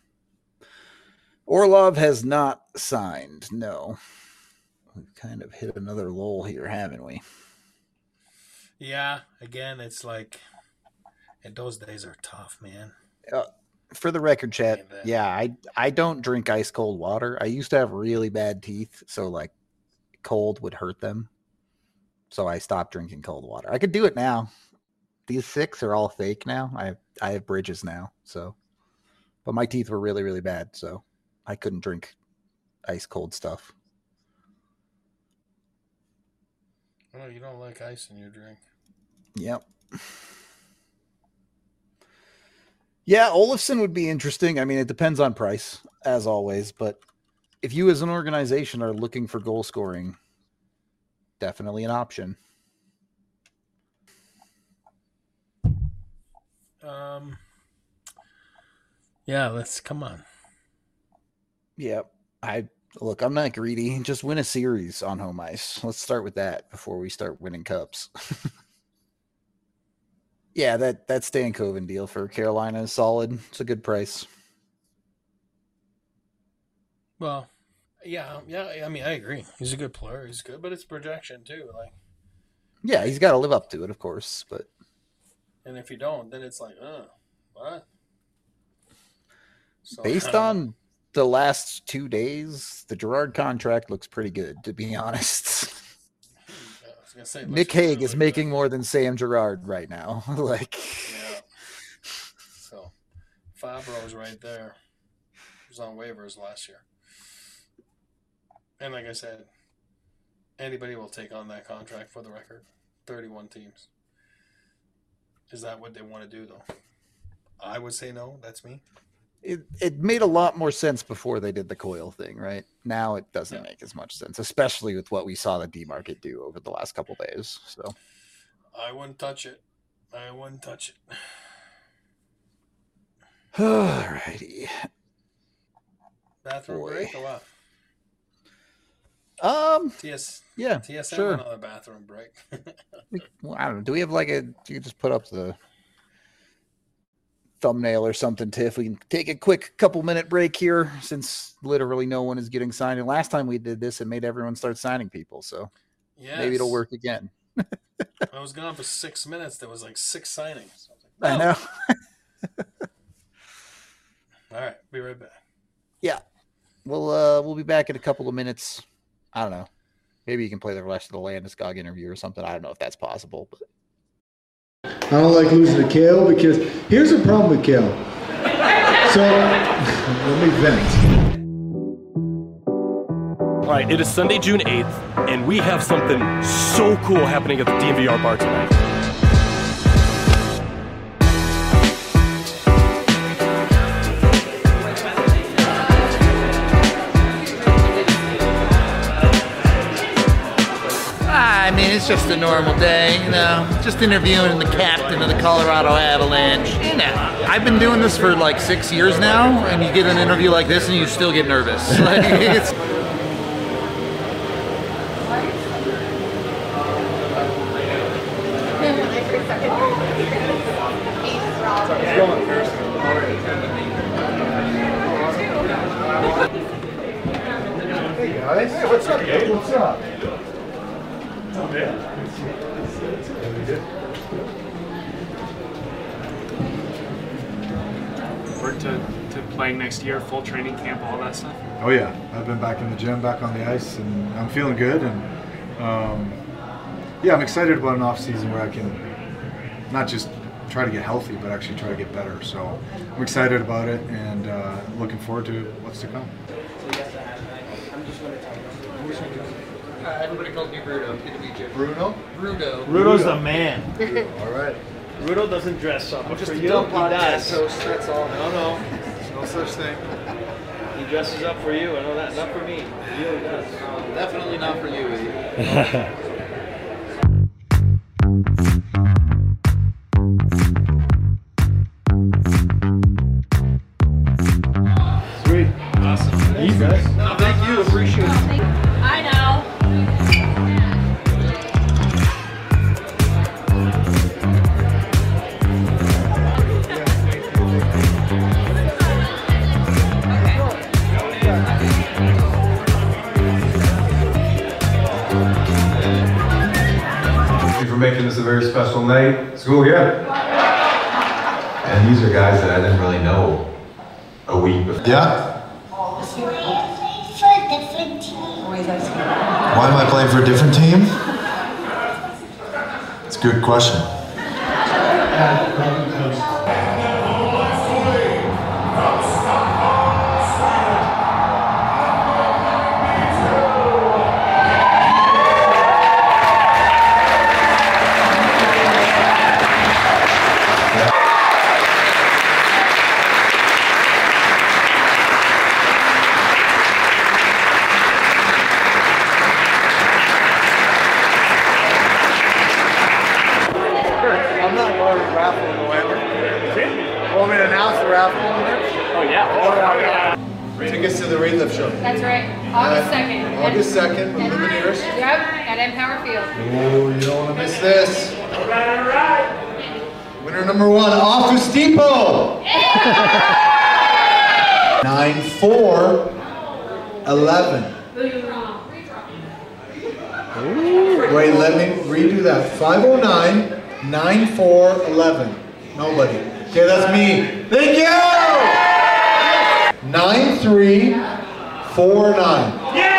Orlov has not signed. No, we've kind of hit another lull here, haven't we? Yeah, again, it's like, and those days are tough, man. Uh, for the record, chat, yeah, I I don't drink ice cold water. I used to have really bad teeth, so like cold would hurt them. So I stopped drinking cold water. I could do it now. These six are all fake now. I have, I have bridges now, so. But my teeth were really, really bad, so I couldn't drink ice cold stuff. Oh, you don't like ice in your drink. Yep. Yeah, Olofsson would be interesting. I mean, it depends on price, as always. But if you as an organization are looking for goal scoring, definitely an option. Um. Yeah, let's come on. Yeah, I look. I'm not greedy. Just win a series on home ice. Let's start with that before we start winning cups. Yeah, that that Stankoven deal for Carolina is solid. It's a good price. Well, yeah, yeah. I mean, I agree. He's a good player. He's good, but it's projection too. Like, yeah, he's got to live up to it, of course. But and if you don't, then it's like, uh, what? So, based on the last two days, the Girard contract looks pretty good, to be honest. Say, Nick Hague is making more than Sam Girard right now. Like, yeah. So, Fabro's right there. He was on waivers last year. And like I said, anybody will take on that contract for the record. thirty-one teams. Is that what they want to do, though? I would say no. That's me. It it made a lot more sense before they did the Coyle thing, right? Now it doesn't yeah. make as much sense, especially with what we saw the D-Market do over the last couple of days. So I wouldn't touch it. I wouldn't touch it. All righty. Bathroom Boy. break or what? Um. T S. Yeah. T S M sure. Another bathroom break. we, well, I don't know. Do we have like a? You can just put up the thumbnail or something, Tiff. We can take a quick couple minute break here since literally no one is getting signed. And last time we did this, it made everyone start signing people. So yes. maybe it'll work again. I was gone for six minutes. There was like six signings. I, like, oh. I know. All right. Be right back. Yeah. We'll, uh, we'll be back in a couple of minutes. I don't know. Maybe you can play the rest of the Landeskog interview or something. I don't know if that's possible, but I don't like losing to Kale because here's the problem with Kale. So, let me vent. All right, it is Sunday, June eighth, and we have something so cool happening at the D M V R bar tonight. I mean, it's just a normal day, you know, just interviewing the captain of the Colorado Avalanche. You know, I've been doing this for like six years now, and you get an interview like this and you still get nervous. Like, it's... Hey guys. guys. Hey, what's up, Gabe? What's up? What's up, man? Forward to, to playing next year, full training camp, all that stuff? Oh yeah, I've been back in the gym, back on the ice, and I'm feeling good. And um, yeah, I'm excited about an off season where I can not just try to get healthy, but actually try to get better. So I'm excited about it, and uh, looking forward to what's to come. Uh, everybody calls me Bruno. Good to meet you. Bruno? Bruno. Bruno's the man. All right. Bruno doesn't dress up. I'm just for a you, dumb he podcast does. host, that's all. No, no. No such thing. He dresses up for you. I know that. Not for me. He really does. Definitely not for you, Eddie. Sweet. Awesome. Thanks, guys. No, thank you. Appreciate it. I know. Thank you for making this a very special night. School here. And these are guys that I didn't really know a week before. Yeah? Why am I playing for a different team? It's a good question. I'm not going to raffle in November. Want me to announce the raffle? Oh, yeah. Tickets to the Relief Show. That's right. August second. August second, with Lumineers. Yep, at Empower Field. Oh, you don't want to miss this. Winner number one, Office Depot. Nine four eleven. Wait, let me redo that. Five oh nine nine four eleven. Nobody. Okay, that's me. Thank you. Nine three four nine.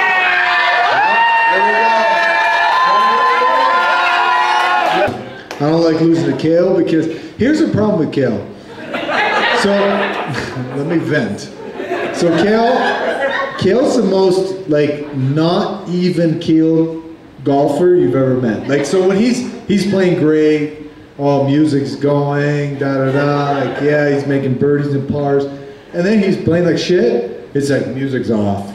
I don't like losing to Kale because here's the problem with Kale. So let me vent. So Kale, Kale's the most like not even keel golfer you've ever met. Like so when he's he's playing great, all music's going, da da da. Like yeah, he's making birdies and pars, and then he's playing like shit. It's like music's off.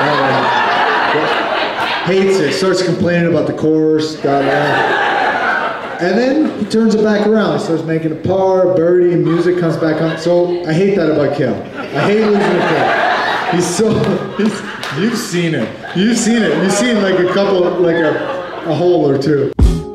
Uh, hates it. Starts complaining about the course. Da da. And then he turns it back around. He starts making a par, birdie, and music comes back on. So I hate that about Kale. I hate losing to Kale. He's so, he's, you've seen it. You've seen it. You've seen like a couple, like a, a hole or two.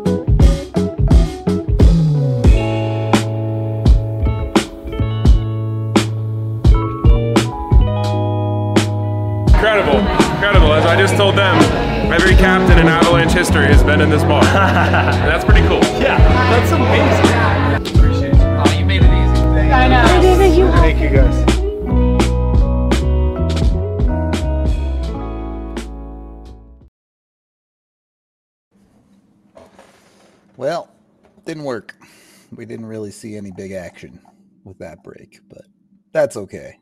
Incredible, incredible. As I just told them, every captain in Avalanche history has been in this bar. That's pretty cool. Yeah, that's amazing. Appreciate you. Oh, you made it easy. I know. Thank you, guys. Well, didn't work. We didn't really see any big action with that break, but that's okay.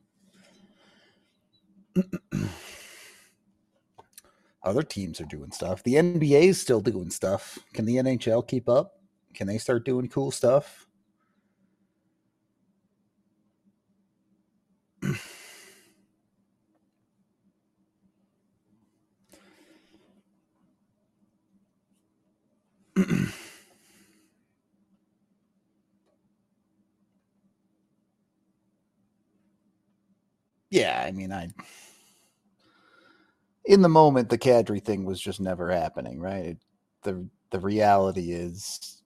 Other teams are doing stuff. The N B A is still doing stuff. Can the N H L keep up? Can they start doing cool stuff? Yeah, I mean, I in the moment the Kadri thing was just never happening, right? It, the the reality is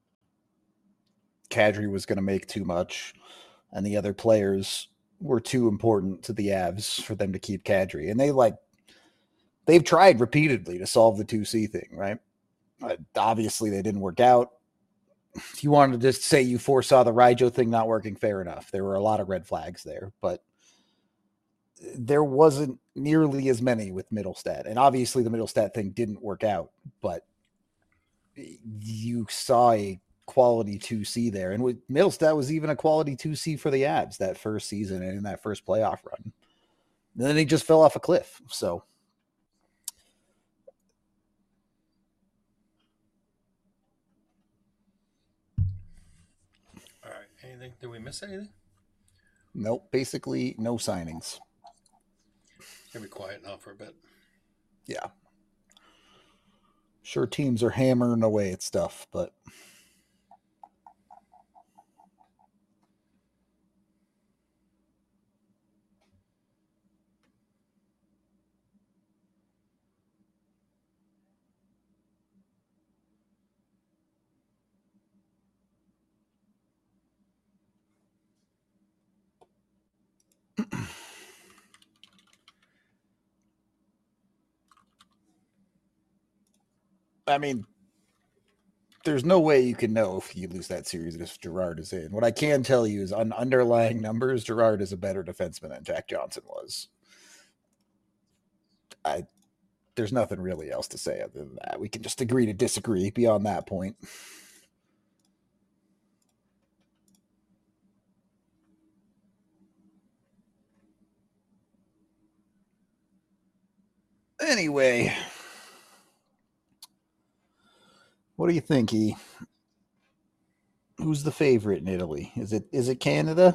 Kadri was going to make too much, and the other players were too important to the Avs for them to keep Kadri, and they like they've tried repeatedly to solve the two C thing, right? Uh, obviously, they didn't work out. If you wanted to just say you foresaw the Rijo thing not working, fair enough. There were a lot of red flags there, but there wasn't nearly as many with Middlestat. And obviously, the Middlestat thing didn't work out, but you saw a quality two C there. And with Middlestat was even a quality two C for the Abs that first season and in that first playoff run. And then he just fell off a cliff. So. All right. Anything? Did we miss anything? Nope. Basically, no signings. Gonna be quiet now for a bit. Yeah. Sure, teams are hammering away at stuff, but. I mean, there's no way you can know if you lose that series if Gerard is in. What I can tell you is on underlying numbers, Gerard is a better defenseman than Jack Johnson was. I there's nothing really else to say other than that. We can just agree to disagree beyond that point. Anyway, what do you think, E? Who's the favorite in Italy? Is it is it Canada?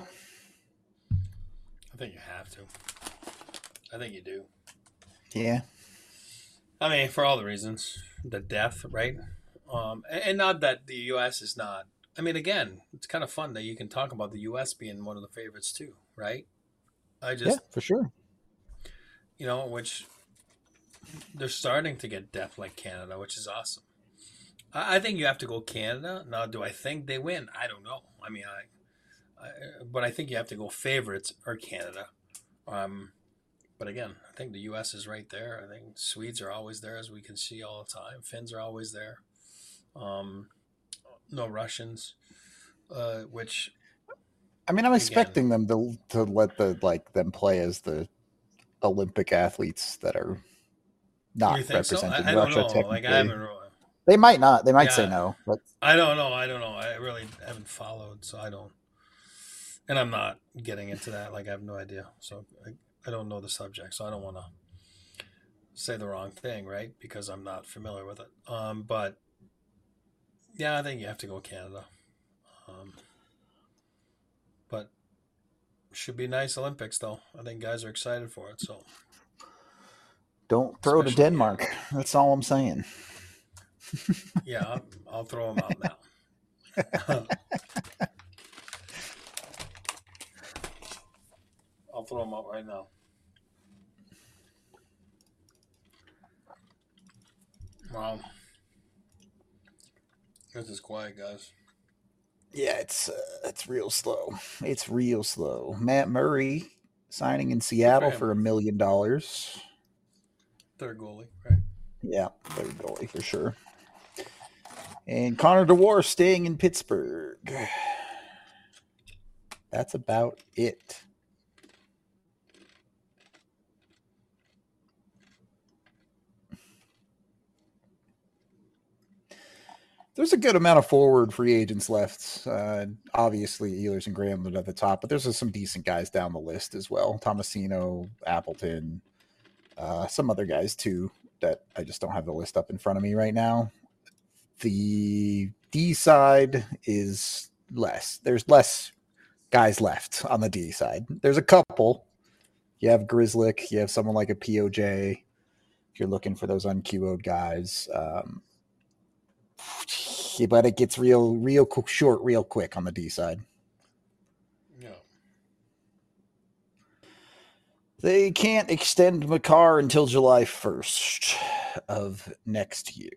I think you have to. I think you do. Yeah. I mean, for all the reasons, the depth, right? Um, and, and not that the U S is not. I mean, again, it's kind of fun that you can talk about the U S being one of the favorites too, right? I just, yeah, for sure. You know, which they're starting to get depth like Canada, which is awesome. I, I think you have to go Canada. Now, do I think they win? I don't know. I mean, I, I but I think you have to go favorites or Canada. Um, but again, I think the U S is right there. I think Swedes are always there, as we can see all the time. Finns are always there. Um, no Russians, uh, which. I mean, I'm again, expecting them to to let the like them play as the Olympic athletes that are not representing so? I, Russia. I don't know. Like I haven't. Really, they might not. They might yeah, say no. But I don't know. I don't know. I really haven't followed, so I don't. And I'm not getting into that. Like I have no idea. So I, I don't know the subject, so I don't want to say the wrong thing, right? Because I'm not familiar with it. Um, but yeah, I think you have to go Canada. Um, but should be nice Olympics, though. I think guys are excited for it. So don't throw Especially, to Denmark. Yeah. That's all I'm saying. yeah, I'll, I'll throw them out now. I'll throw them out right now. Wow. This is quiet, guys. Yeah, it's uh, it's real slow. It's real slow. Matt Murray signing in Seattle for a million dollars. Third goalie, right? Yeah, third goalie for sure. And Connor DeWar staying in Pittsburgh. That's about it. There's a good amount of forward free agents left. Uh, obviously, Ehlers and Granlund at the top, but there's some decent guys down the list as well. Tomasino, Appleton, uh, some other guys too that I just don't have the list up in front of me right now. The D side is less. There's less guys left on the D side. There's a couple. You have Grizzlick. You have someone like a P O J. If you're looking for those unQ O'd guys. Um, but it gets real, real short, real quick on the D side. Yeah. They can't extend Makar until July first of next year.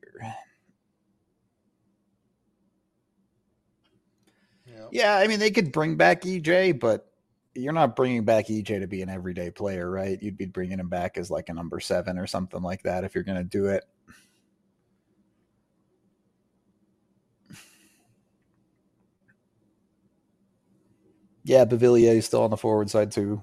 Yeah. Yeah, I mean, they could bring back E J, but you're not bringing back E J to be an everyday player, right? You'd be bringing him back as like a number seven or something like that if you're going to do it. Yeah, Bavillier is still on the forward side too.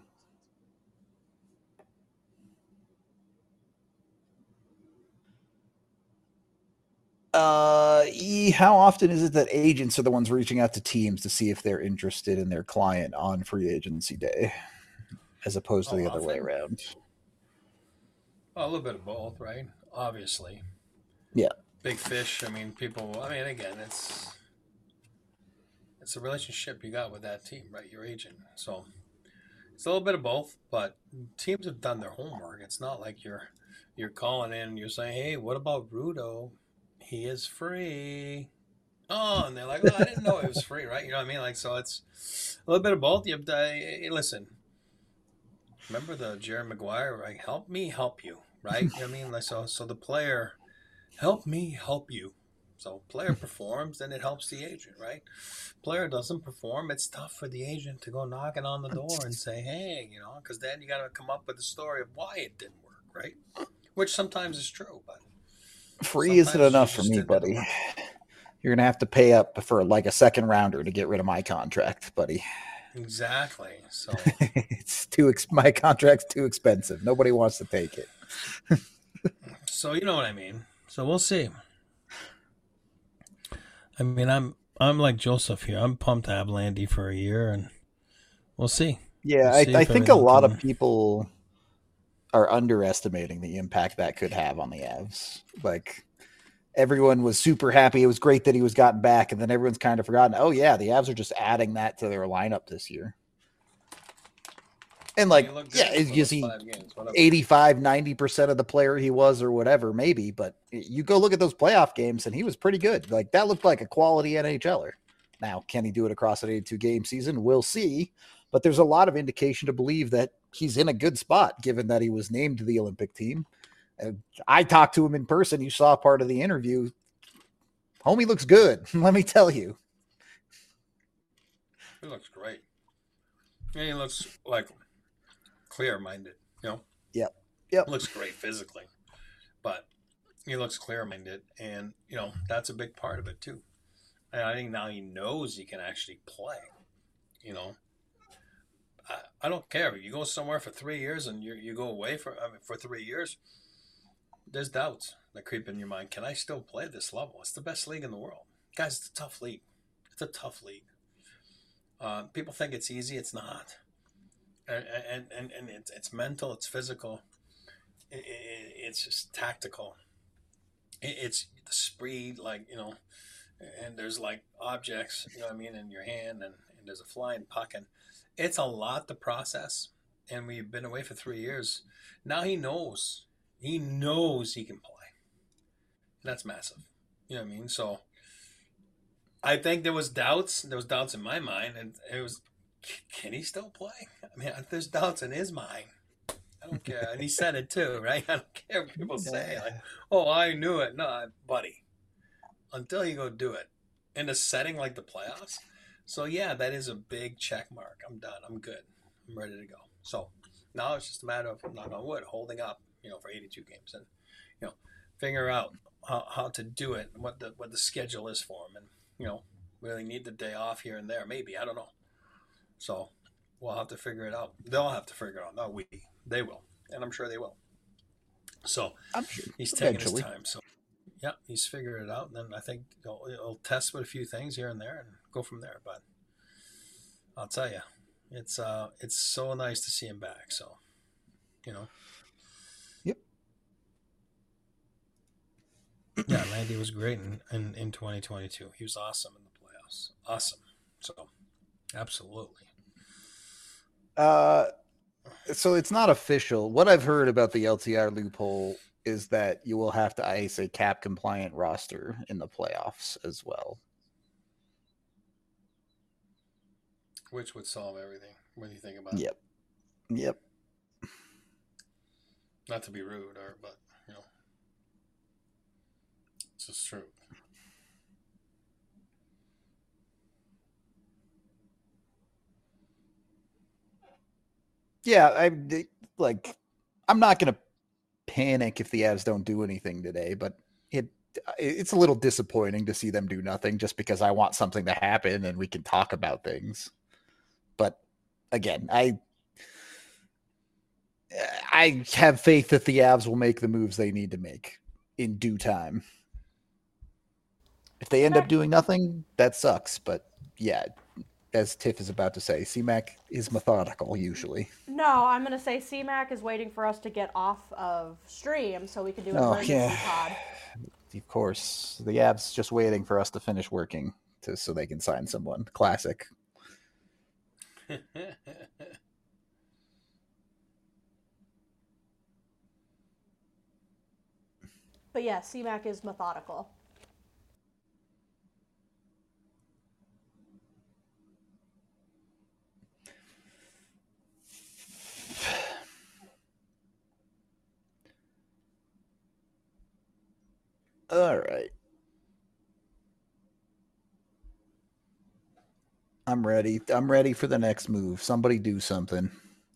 Uh, e, how often is it that agents are the ones reaching out to teams to see if they're interested in their client on free agency day, as opposed to How the other way often? around? Well, a little bit of both, right? Obviously, Yeah, big fish. I mean, people. I mean, again, it's it's a relationship you got with that team, right? Your agent. So it's a little bit of both, but teams have done their homework. It's not like you're you're calling in and you're saying, "Hey, what about Rudo? He is free." Oh, and they're like, "Oh, I didn't know it was free," right? You know what I mean? Like, so it's a little bit of both. You have to, hey, listen. Remember the Jerry Maguire, right? Help me help you, right? You know what I mean? Like, so, so the player, help me help you. So player performs, then it helps the agent, right? Player doesn't perform, it's tough for the agent to go knocking on the door and say, hey, you know, because then you got to come up with a story of why it didn't work, right? Which sometimes is true, but free isn't sometimes you enough for just me, didn't do the buddy. work. You're gonna have to pay up for like a second rounder to get rid of my contract, buddy. Exactly. So, It's too ex- my contract's too expensive. Nobody wants to take it. so you know what I mean. So we'll see. I mean, I'm I'm like Joseph here. I'm pumped to have Landy for a year, and we'll see. Yeah, We'll I, see I if think a everything lot of can. people are underestimating the impact that could have on the Avs. Like everyone was super happy. It was great that he was gotten back, and then everyone's kind of forgotten. Oh yeah, the Avs are just adding that to their lineup this year. And And he like, looked yeah, good is, for is those he five games, whatever. eighty-five, ninety percent of the player he was or whatever, maybe, but you go look at those playoff games and he was pretty good. Like that looked like a quality NHLer. Now, can he do it across an eighty-two game season? We'll see. But there's a lot of indication to believe that he's in a good spot given that he was named to the Olympic team. And I talked to him in person. You saw part of the interview. Homie looks good. Let me tell you. He looks great. And he looks like clear minded, you know? Yep. Yep. Looks great physically, but he looks clear minded. And, you know, that's a big part of it, too. And I think now he knows he can actually play, you know? I, I don't care. You go somewhere for three years and you you go away for I mean, for three years. There's doubts that creep in your mind. Can I still play at this level? It's the best league in the world, guys. It's a tough league. It's a tough league. Uh, people think it's easy. It's not. And and and, and it's it's mental. It's physical. It, it, it's just tactical. It, it's the speed, like you know, and there's like objects, you know what I mean, in your hand, and, and there's a flying puck, and it's a lot to process. And we've been away for three years. Now he knows. He knows he can play. And that's massive. You know what I mean? So I think there was doubts. There was doubts in my mind, and it was, can he still play? I mean, there's doubts in his mind. I don't care, and he said it too, right? I don't care what people say. Like, oh, I knew it. No, buddy, until you go do it in a setting like the playoffs. So yeah, that is a big check mark. I'm done. I'm good. I'm ready to go. So now it's just a matter of knock on wood, holding up, you know, for eighty-two games, and you know, figure out how, how to do it, what the what the schedule is for him, and you know, really need the day off here and there. Maybe I don't know. So we'll have to figure it out. They'll have to figure it out. Not we. They will, and I'm sure they will. So I'm sure. he's taking his Eventually. time. So yeah, he's figured it out, and then I think he'll, he'll test with a few things here and there and go from there. But I'll tell you, it's uh, it's so nice to see him back. So you know, Yep. yeah, Landy was great in, in, in twenty twenty-two. He was awesome in the playoffs. Awesome. So absolutely. Uh, so it's not official. What I've heard about the L T R loophole is that you will have to ice a cap compliant roster in the playoffs as well. Which would solve everything. What do you think about Yep. it? Yep. Not to be rude, or but you know, it's just true. Yeah, I like. I'm not gonna panic if the Avs don't do anything today, but it it's a little disappointing to see them do nothing just because I want something to happen and we can talk about things. But again, I I have faith that the Avs will make the moves they need to make in due time. If they end up C-Mac, doing nothing, that sucks. But yeah, as Tiff is about to say, C Mac is methodical usually. no, I'm gonna say C-Mac is waiting for us to get off of stream so we can do an Oh yeah, emergency pod. of course. The Avs just waiting for us to finish working to so they can sign someone. Classic. But yeah, C-Mac is methodical. All right. I'm ready. I'm ready for the next move. Somebody do something.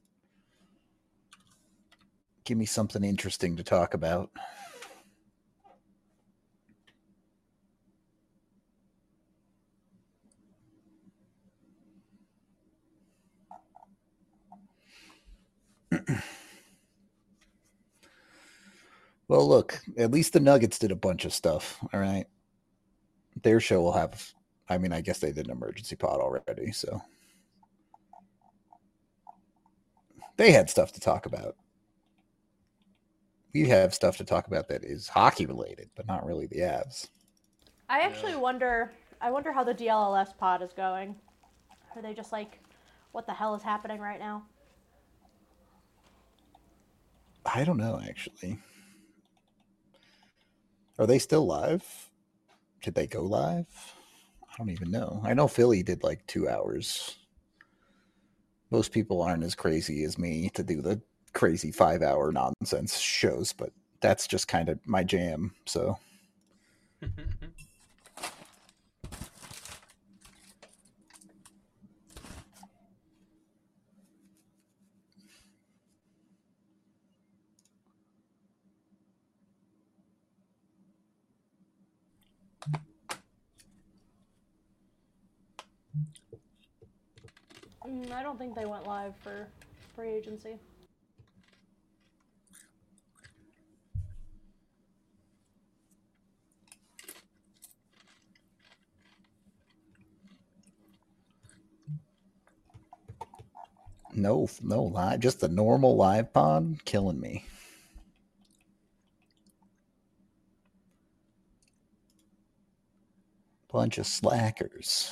Give me something interesting to talk about. Well, look, at least the Nuggets did a bunch of stuff. All right. Their show will have, I mean, I guess they did an emergency pod already. So they had stuff to talk about. We have stuff to talk about that is hockey related, but not really the Avs. I actually Yeah. wonder. I wonder how the D L L S pod is going. Are they just like, what the hell is happening right now? I don't know, actually. Are they still live? Did they go live? I don't even know. I know Philly did like two hours. Most people aren't as crazy as me to do the crazy five hour nonsense shows, but that's just kind of my jam. So Mm, I don't think they went live for free agency. no, no live, just the normal live pod killing me. Bunch of slackers.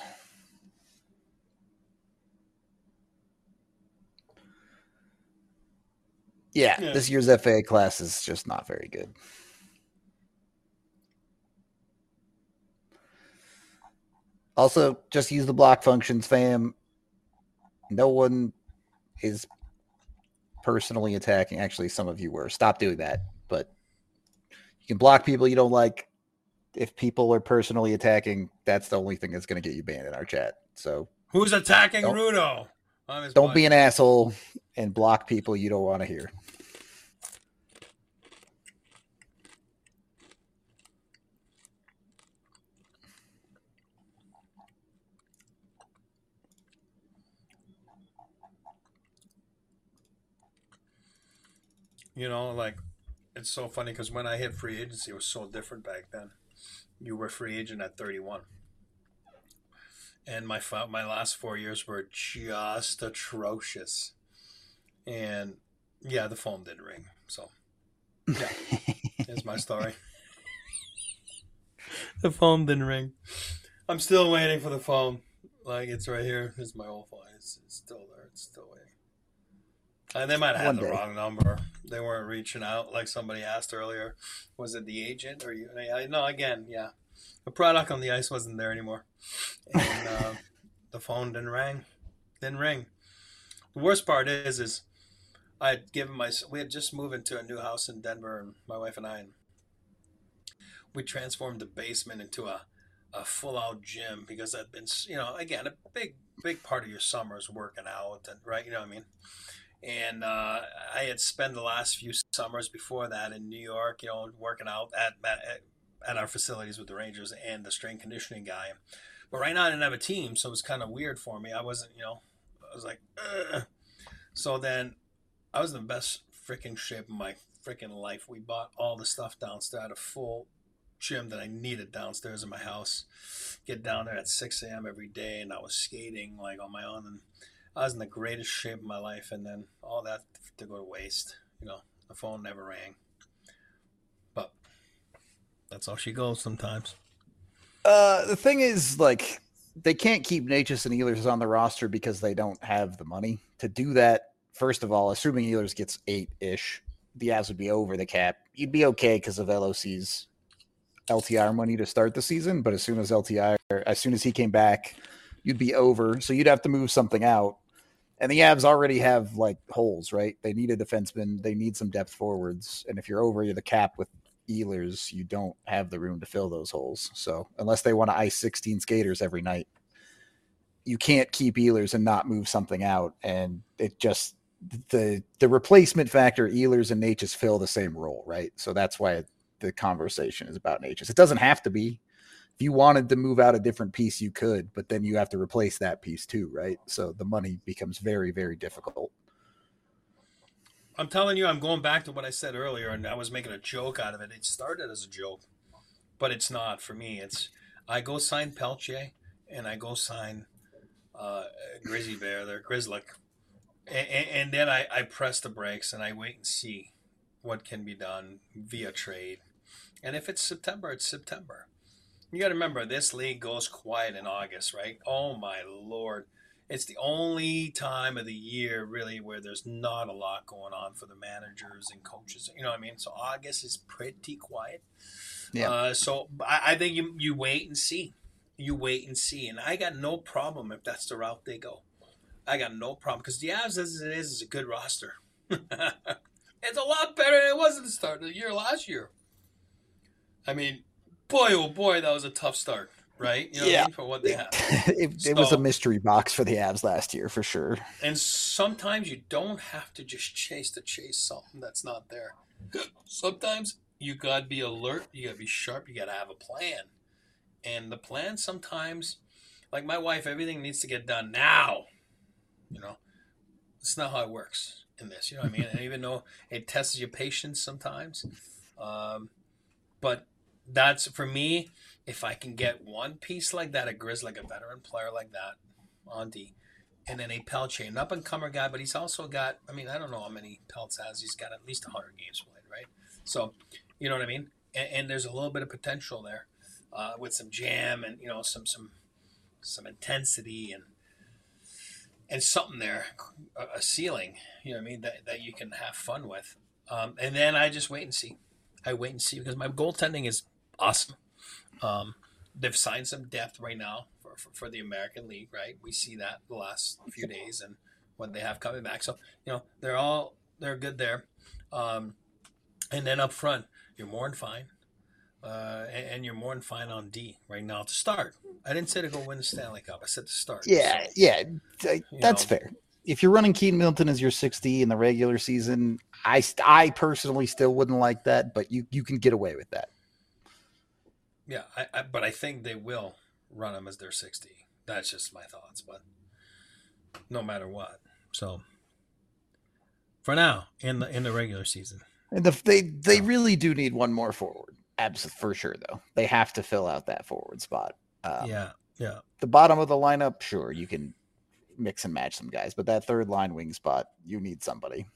Yeah, Yeah. this year's F A class is just not very good. Also, just use the block functions, fam. No one is personally attacking. Actually, some of you were. Stop doing that. But you can block people you don't like. If people are personally attacking, that's the only thing that's going to get you banned in our chat. So Who's attacking Don't- Rudo? On his don't be an podcast? asshole and block people you don't want to hear. You know, like, it's so funny because when I hit free agency, it was so different back then. You were free agent at thirty-one. And my my last four years were just atrocious. And yeah, the phone did ring. So yeah, here's my story. The phone didn't ring. I'm still waiting for the phone. Like, it's right here. This is my old phone. It's, it's still there. It's still waiting. And they might have One had the day. wrong number. They weren't reaching out like somebody asked earlier. Was it the agent or you? I, no, again, yeah. The product on the ice wasn't there anymore, and uh, the phone didn't ring. Didn't ring. The worst part is, is I had given my. We had just moved into a new house in Denver, and my wife and I, and we transformed the basement into a, a full out gym because I'd been, you know, again, a big big part of your summer is working out, and right, you know what I mean. And uh, I had spent the last few summers before that in New York, you know, working out at, at at our facilities with the Rangers and the strength conditioning guy. But right now I didn't have a team, so it was kind of weird for me. I wasn't, you know, I was like, ugh. So then I was in the best freaking shape of my freaking life. We bought all the stuff downstairs. I had a full gym that I needed downstairs in my house. Get down there at six a m every day, and I was skating like on my own, and I was in the greatest shape of my life. And then all that to go to waste. You know, the phone never rang. But that's how she goes sometimes. Uh, the thing is, like, they can't keep Necas and Ehlers on the roster because they don't have the money to do that. First of all, assuming Ehlers gets eight-ish, the Avs would be over the cap. You'd be okay because of L O C's L T I R money to start the season, but as soon as L T I R, as soon as he came back, you'd be over. So you'd have to move something out. And the Avs already have like holes, right? They need a defenseman. They need some depth forwards. And if you're over the cap with Ehlers, you don't have the room to fill those holes. So unless they want to ice sixteen skaters every night, you can't keep Ehlers and not move something out. And it just, the the replacement factor, Ehlers and Necas fill the same role, right? So that's why it, the conversation is about Necas. It doesn't have to be. If you wanted to move out a different piece, you could, but then you have to replace that piece too, right? So the money becomes very, very difficult. I'm telling you, I'm going back to what I said earlier, and I was making a joke out of it. It started as a joke, but it's not for me. It's I go sign Pelche, and I go sign uh, Grizzly Bear, there, Grizzly, and, and then I, I press the brakes and I wait and see what can be done via trade. And if it's September, it's September. You got to remember, this league goes quiet in August, right? Oh, my Lord. It's the only time of the year, really, where there's not a lot going on for the managers and coaches. You know what I mean? So August is pretty quiet. Yeah. Uh, so I, I think you you wait and see. You wait and see. And I got no problem if that's the route they go. I got no problem. Because the Avs, as it is, is a good roster. It's a lot better than it was at the start of the year last year. I mean, boy, oh boy, that was a tough start, right? You know yeah. what I mean? For what they have. it, it so, was a mystery box for the Avs last year, for sure. And sometimes you don't have to just chase to chase something that's not there. Sometimes you got to be alert. You got to be sharp. You got to have a plan. And the plan sometimes, like my wife, everything needs to get done now. You know, it's not how it works in this. You know what I mean? And even though it tests your patience sometimes, um, but that's for me. If I can get one piece like that, a Grizz, like a veteran player like that, on D, and then a Pelche, an up-and-comer guy, but he's also got, I mean, I don't know how many Pelts has. He's got at least one hundred games played, right? So, you know what I mean? And, and there's a little bit of potential there uh, with some jam and, you know, some some some intensity and and something there, a, a ceiling, you know what I mean, that, that you can have fun with. Um, and then I just wait and see. I wait and see because my goaltending is awesome. Um, they've signed some depth right now for, for, for the American League, right? We see that the last few days and what they have coming back. So, you know, they're all, they're good there. Um, and then up front, you're more than fine. Uh, and, and you're more than fine on D right now to start. I didn't say to go win the Stanley Cup. I said to start. Yeah, so, yeah, that's know. fair. If you're running Keaton Middleton as your six D in the regular season, I, I personally still wouldn't like that, but you, you can get away with that. Yeah, I, I, but I think they will run him as their sixty. That's just my thoughts, but no matter what. So for now, in the in the regular season, and the, they they so. really do need one more forward. Absolutely, for sure, though. They have to fill out that forward spot. Um, yeah, yeah. The bottom of the lineup, sure, you can mix and match some guys, but that third line wing spot, you need somebody.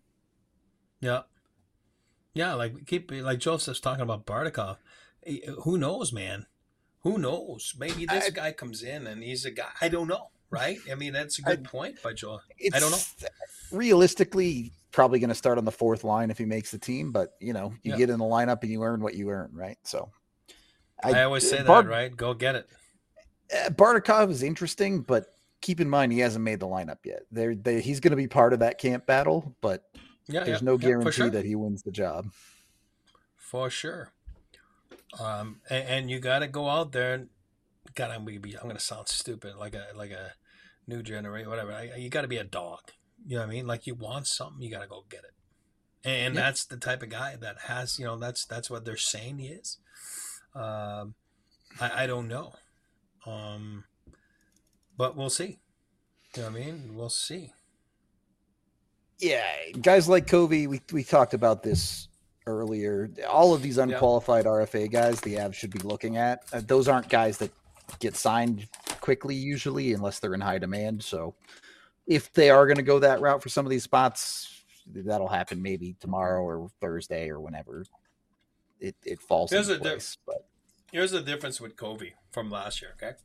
Yeah, yeah. Like keep like Joseph's talking about Bardakov. Who knows, man? Who knows? Maybe this I, guy comes in and he's a guy. I don't know, right? I mean, that's a good I, point by Joel. I don't know. Realistically, probably going to start on the fourth line if he makes the team, but you know, you yeah. get in the lineup and you earn what you earn, right? So I, I always say Bard, that, right? Go get it. Uh, Bardakov is interesting, but keep in mind he hasn't made the lineup yet. There, they, he's going to be part of that camp battle, but yeah, there's yeah, no guarantee yeah, sure. that he wins the job. For sure. Um, and, and you got to go out there and God, I'm gonna be, I'm gonna sound stupid, like a like a new generation, whatever. I, you got to be a dog. You know what I mean? Like you want something, you got to go get it. And Yep. that's the type of guy that has, you know, that's that's what they're saying he is. Um, I, I don't know, um, but we'll see. You know what I mean? We'll see. Yeah, guys like Covey, we we talked about this earlier. All of these Yeah. unqualified R F A guys, the Avs should be looking at. Uh, those aren't guys that get signed quickly usually, unless they're in high demand. So if they are going to go that route for some of these spots, that'll happen maybe tomorrow or Thursday or whenever it, it falls Here's into a di- place. But here's the difference with Covey from last year. Okay.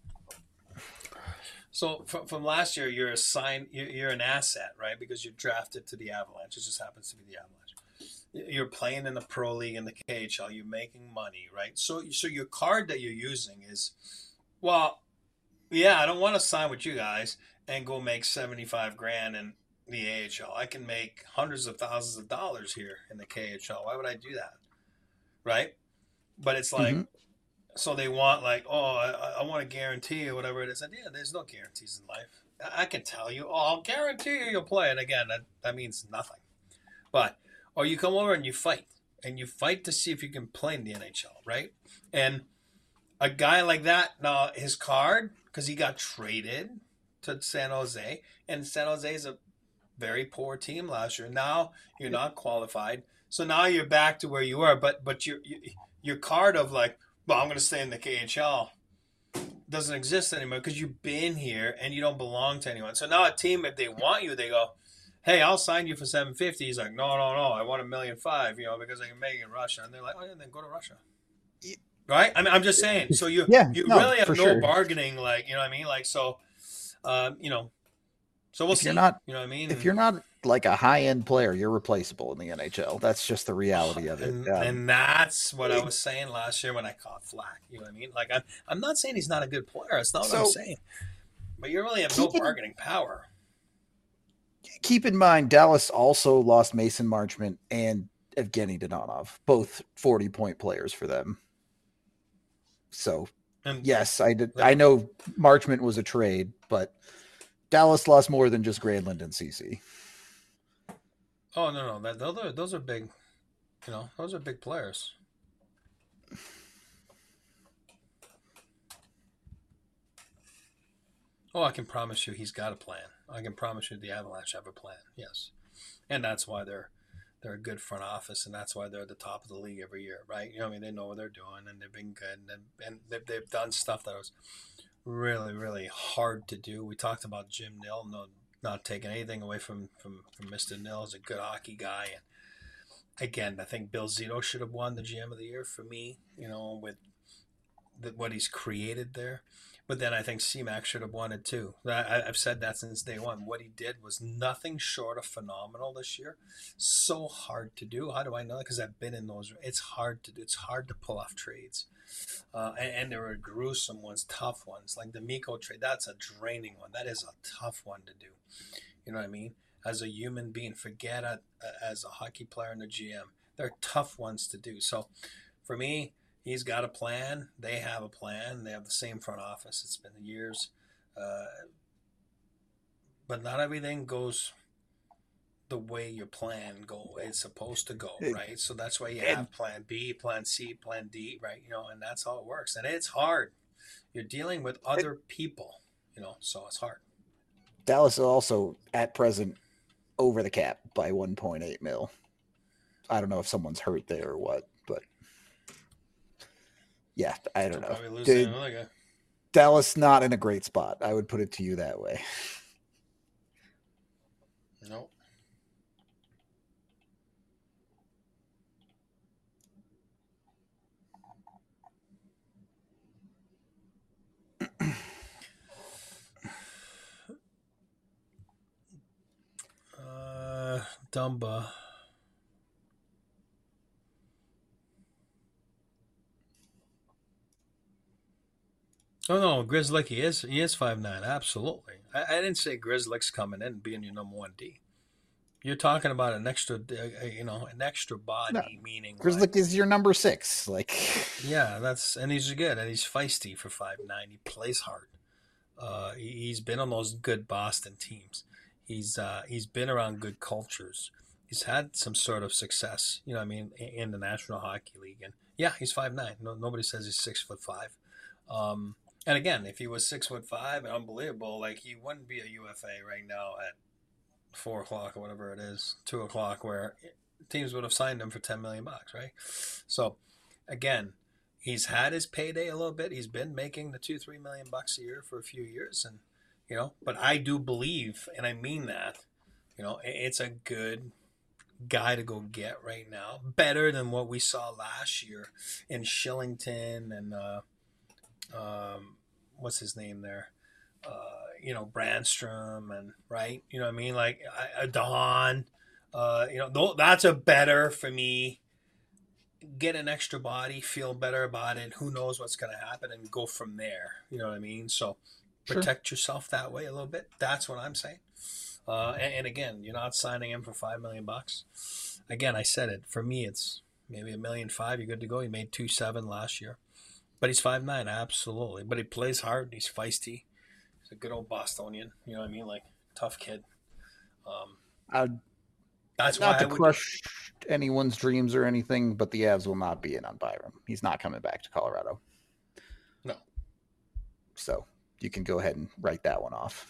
So from, from last year, you're assigned, you're, you're an asset, right? Because you're drafted to the Avalanche. It just happens to be the Avalanche. You're playing in the pro league in the K H L. You're making money, right? So, so your card that you're using is, well, yeah, I don't want to sign with you guys and go make seventy-five grand in the A H L. I can make hundreds of thousands of dollars here in the K H L. Why would I do that, right? But it's like, mm-hmm. so they want like, oh, I, I want a guarantee or whatever it is. And yeah, there's no guarantees in life. I can tell you, oh, I'll guarantee you you'll play. And again, that, that means nothing. But, or you come over and you fight. And you fight to see if you can play in the N H L, right? And a guy like that, now his card, because he got traded to San Jose. And San Jose is a very poor team last year. Now you're not qualified. So now you're back to where you were. But, but your, your card of like, well, I'm going to stay in the K H L doesn't exist anymore because you've been here and you don't belong to anyone. So now a team, if they want you, they go, hey, I'll sign you for seven fifty. He's like, no, no, no, I want a million five, you know, because I can make it in Russia. And they're like, oh, yeah, then go to Russia. Right? I mean, I'm just saying. So you yeah, you no, really have no sure. bargaining, like, you know what I mean? Like, so, um, you know, so we'll if see. You're not, you know what I mean? if you're not like a high end player, you're replaceable in the N H L. That's just the reality of it. And, Um, and that's what I was saying last year when I caught flack. You know what I mean? Like, I'm, I'm not saying he's not a good player. That's not what So- I'm saying. But you really have no Keep in- bargaining power. keep in mind, Dallas also lost Mason Marchment and Evgeny Donov, both forty point players for them. So And yes, I did. I know Marchment was a trade, but Dallas lost more than just Granlund and C C. oh no, no, that those are those are big. You know, those are big players. Oh, I can promise you, he's got a plan. I can promise you, the Avalanche have a plan. Yes, and that's why they're they're a good front office, and that's why they're at the top of the league every year, right? You know, I mean, they know what they're doing, and they've been good, and and they've, they've done stuff that was really, really hard to do. We talked about Jim Nill, no, not taking anything away from from from Mister Nill. He's a good hockey guy, and again, I think Bill Zito should have won the G M of the year for me. You know, with the, what he's created there. But then I think C-Mac should have won it too. I, I've said that since day one. What he did was nothing short of phenomenal this year. So hard to do. How do I know that? Because I've been in those. It's hard to do. It's hard to pull off trades. Uh, and, and there were gruesome ones, tough ones. Like the Miko trade, that's a draining one. That is a tough one to do. You know what I mean? As a human being, forget it as a hockey player and a G M. They're tough ones to do. So for me, he's got a plan. They have a plan. They have the same front office. It's been years. Uh, but not everything goes the way your plan go. It's supposed to go, right? So that's why you have plan B, plan C, plan D, right? You know, and that's how it works. And it's hard. You're dealing with other people, you know, so it's hard. Dallas is also at present over the cap by one point eight mil. I don't know if someone's hurt there or what, but yeah, I don't know. Dude, Dallas not in a great spot. I would put it to you that way. Nope. uh, Dumba. Oh no, Grizzlick, he is he is five nine, absolutely. I, I didn't say Grizzlick's coming in and being your number one D. You're talking about an extra, uh, you know, an extra body, no. meaning Grizzlick like, is your number six. Like, yeah, that's and he's good and he's feisty for five nine. He plays hard. Uh, he, he's been on those good Boston teams. He's uh, he's been around good cultures. He's had some sort of success, you know what I mean, in the National Hockey League. And yeah, he's five nine. No, nobody says he's six foot five. Um, and again, if he was six foot five and unbelievable, like he wouldn't be a U F A right now at four o'clock or whatever it is, two o'clock, where teams would have signed him for ten million bucks, right? So again, he's had his payday a little bit. He's been making the two, three million bucks a year for a few years, and you know. But I do believe, and I mean that, you know, it's a good guy to go get right now. Better than what we saw last year in Shillington and uh, um, what's his name there, uh, you know, Brandstrom and right, you know what I mean, like a Don. Uh, you know, that's a better for me. Get an extra body, feel better about it. Who knows what's going to happen, and go from there. You know what I mean? So protect sure. yourself that way a little bit. That's what I'm saying. Uh, and, and again, you're not signing him for five million bucks. Again, I said it. For me, it's maybe a million five. You're good to go. He made two seven last year, but he's five nine, absolutely. But he plays hard. He's feisty. He's a good old Bostonian. You know what I mean? Like tough kid. Um, I'd That's not why to I would, crush anyone's dreams or anything, but the Avs will not be in on Byram. He's not coming back to Colorado. No. So you can go ahead and write that one off.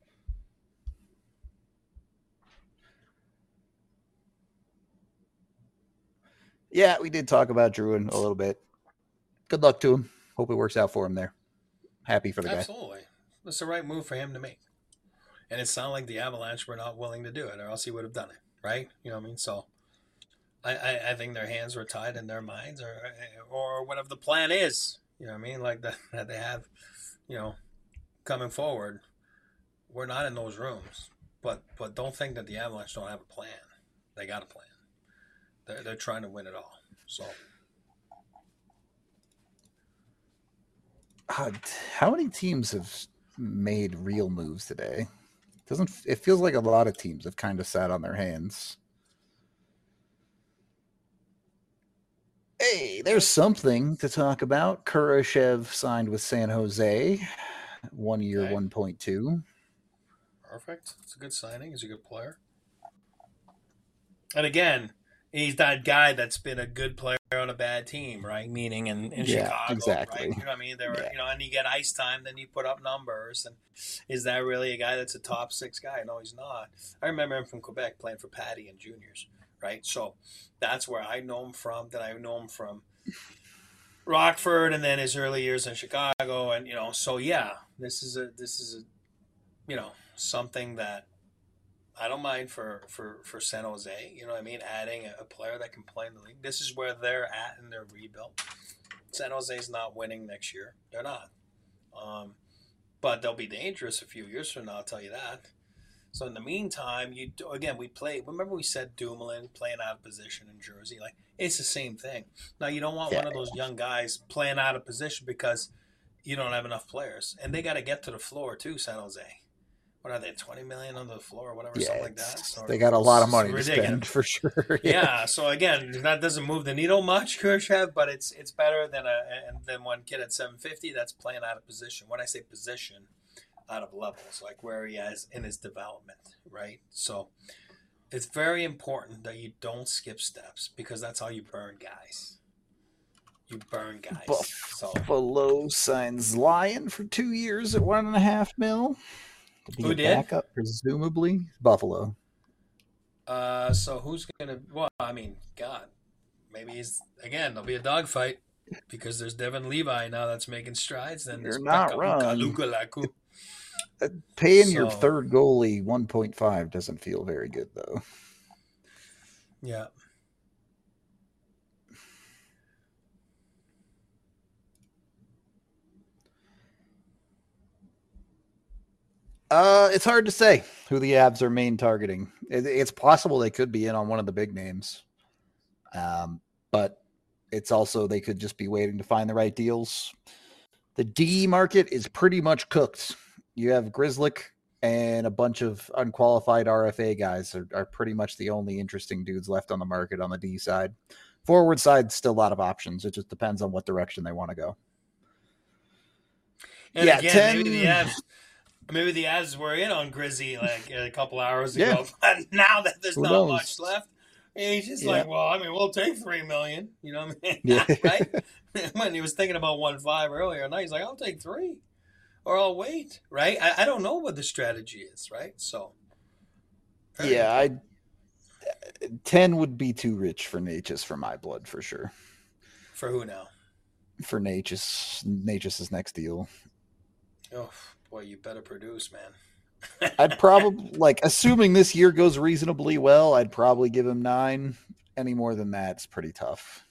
Yeah, we did talk about Drouin a little bit. Good luck to him. Hope it works out for him there. Happy for the guy. Absolutely. It's the right move for him to make. And it sounded like the Avalanche were not willing to do it, or else he would have done it, right? You know what I mean? So I, I, I think their hands were tied in their minds, or or whatever the plan is. You know what I mean? Like that, that they have, you know, coming forward. We're not in those rooms. But but don't think that the Avalanche don't have a plan. They got a plan. They're, they're trying to win it all. So uh, how many teams have made real moves today? Doesn't it feels like a lot of teams have kind of sat on their hands. Hey, there's something to talk about. Kurashev signed with San Jose, one year, okay. one point two. Perfect. It's a good signing. He's a good player. And again, he's that guy that's been a good player on a bad team, right? Meaning in, in yeah, Chicago, exactly. right? You know what I mean? There were, yeah. you know, and you get ice time, then you put up numbers. And is that really a guy that's a top six guy? No, he's not. I remember him from Quebec playing for Patty and juniors, right? So that's where I know him from. Then I know him from Rockford, and then his early years in Chicago, and you know, so yeah, this is a this is a you know something that I don't mind for, for, for San Jose. You know what I mean? Adding a, a player that can play in the league. This is where they're at in their rebuild. San Jose's not winning next year. They're not. Um, but they'll be dangerous a few years from now, I'll tell you that. So in the meantime, you do, again, we play. Remember we said Dumoulin playing out of position in Jersey? Like, it's the same thing. Now, you don't want Yeah. one of those young guys playing out of position because you don't have enough players. And they got to get to the floor, too, San Jose. What are they, twenty million on the floor or whatever, yeah, something like that? So they got a lot of it's money to ridiculous. spend for sure. yeah. yeah. So again, that doesn't move the needle much, Kurashev, but it's it's better than a than one kid at seven fifty that's playing out of position. When I say position, out of levels, like where he is in his development, right? So it's very important that you don't skip steps because that's how you burn guys. You burn guys. Buffalo so. signs Lyon for two years at one and a half mil. To be Who a did? Backup, presumably Buffalo. Uh, so who's gonna? Well, I mean, God, maybe he's again. There'll be a dogfight because there's Devin Levi now that's making strides. Then You're not wrong. Uh, paying so, your third goalie one point five doesn't feel very good, though. Yeah. Uh, it's hard to say who the Avs are main targeting. It, it's possible they could be in on one of the big names. Um, but it's also they could just be waiting to find the right deals. The D market is pretty much cooked. You have Grzelcyk and a bunch of unqualified R F A guys are, are pretty much the only interesting dudes left on the market on the D side. Forward side, still a lot of options. It just depends on what direction they want to go. And yeah, again, ten... maybe the Avs, Maybe the ads were in on Grizzy like a couple hours Yeah. ago, but now that there's Who not knows? much left, he's just Yeah. like, well, I mean, we'll take three million. You know what I mean? Yeah. Right? When he was thinking about one five earlier, now he's like, I'll take three, or I'll wait. Right? I, I don't know what the strategy is. Right? So very Yeah, important. I ten would be too rich for Natchez for my blood for sure. For who now? For Natchez, Natchez's next deal. Oh boy, you better produce, man. I'd probably like assuming this year goes reasonably well, I'd probably give him nine. Any more than that, it's pretty tough.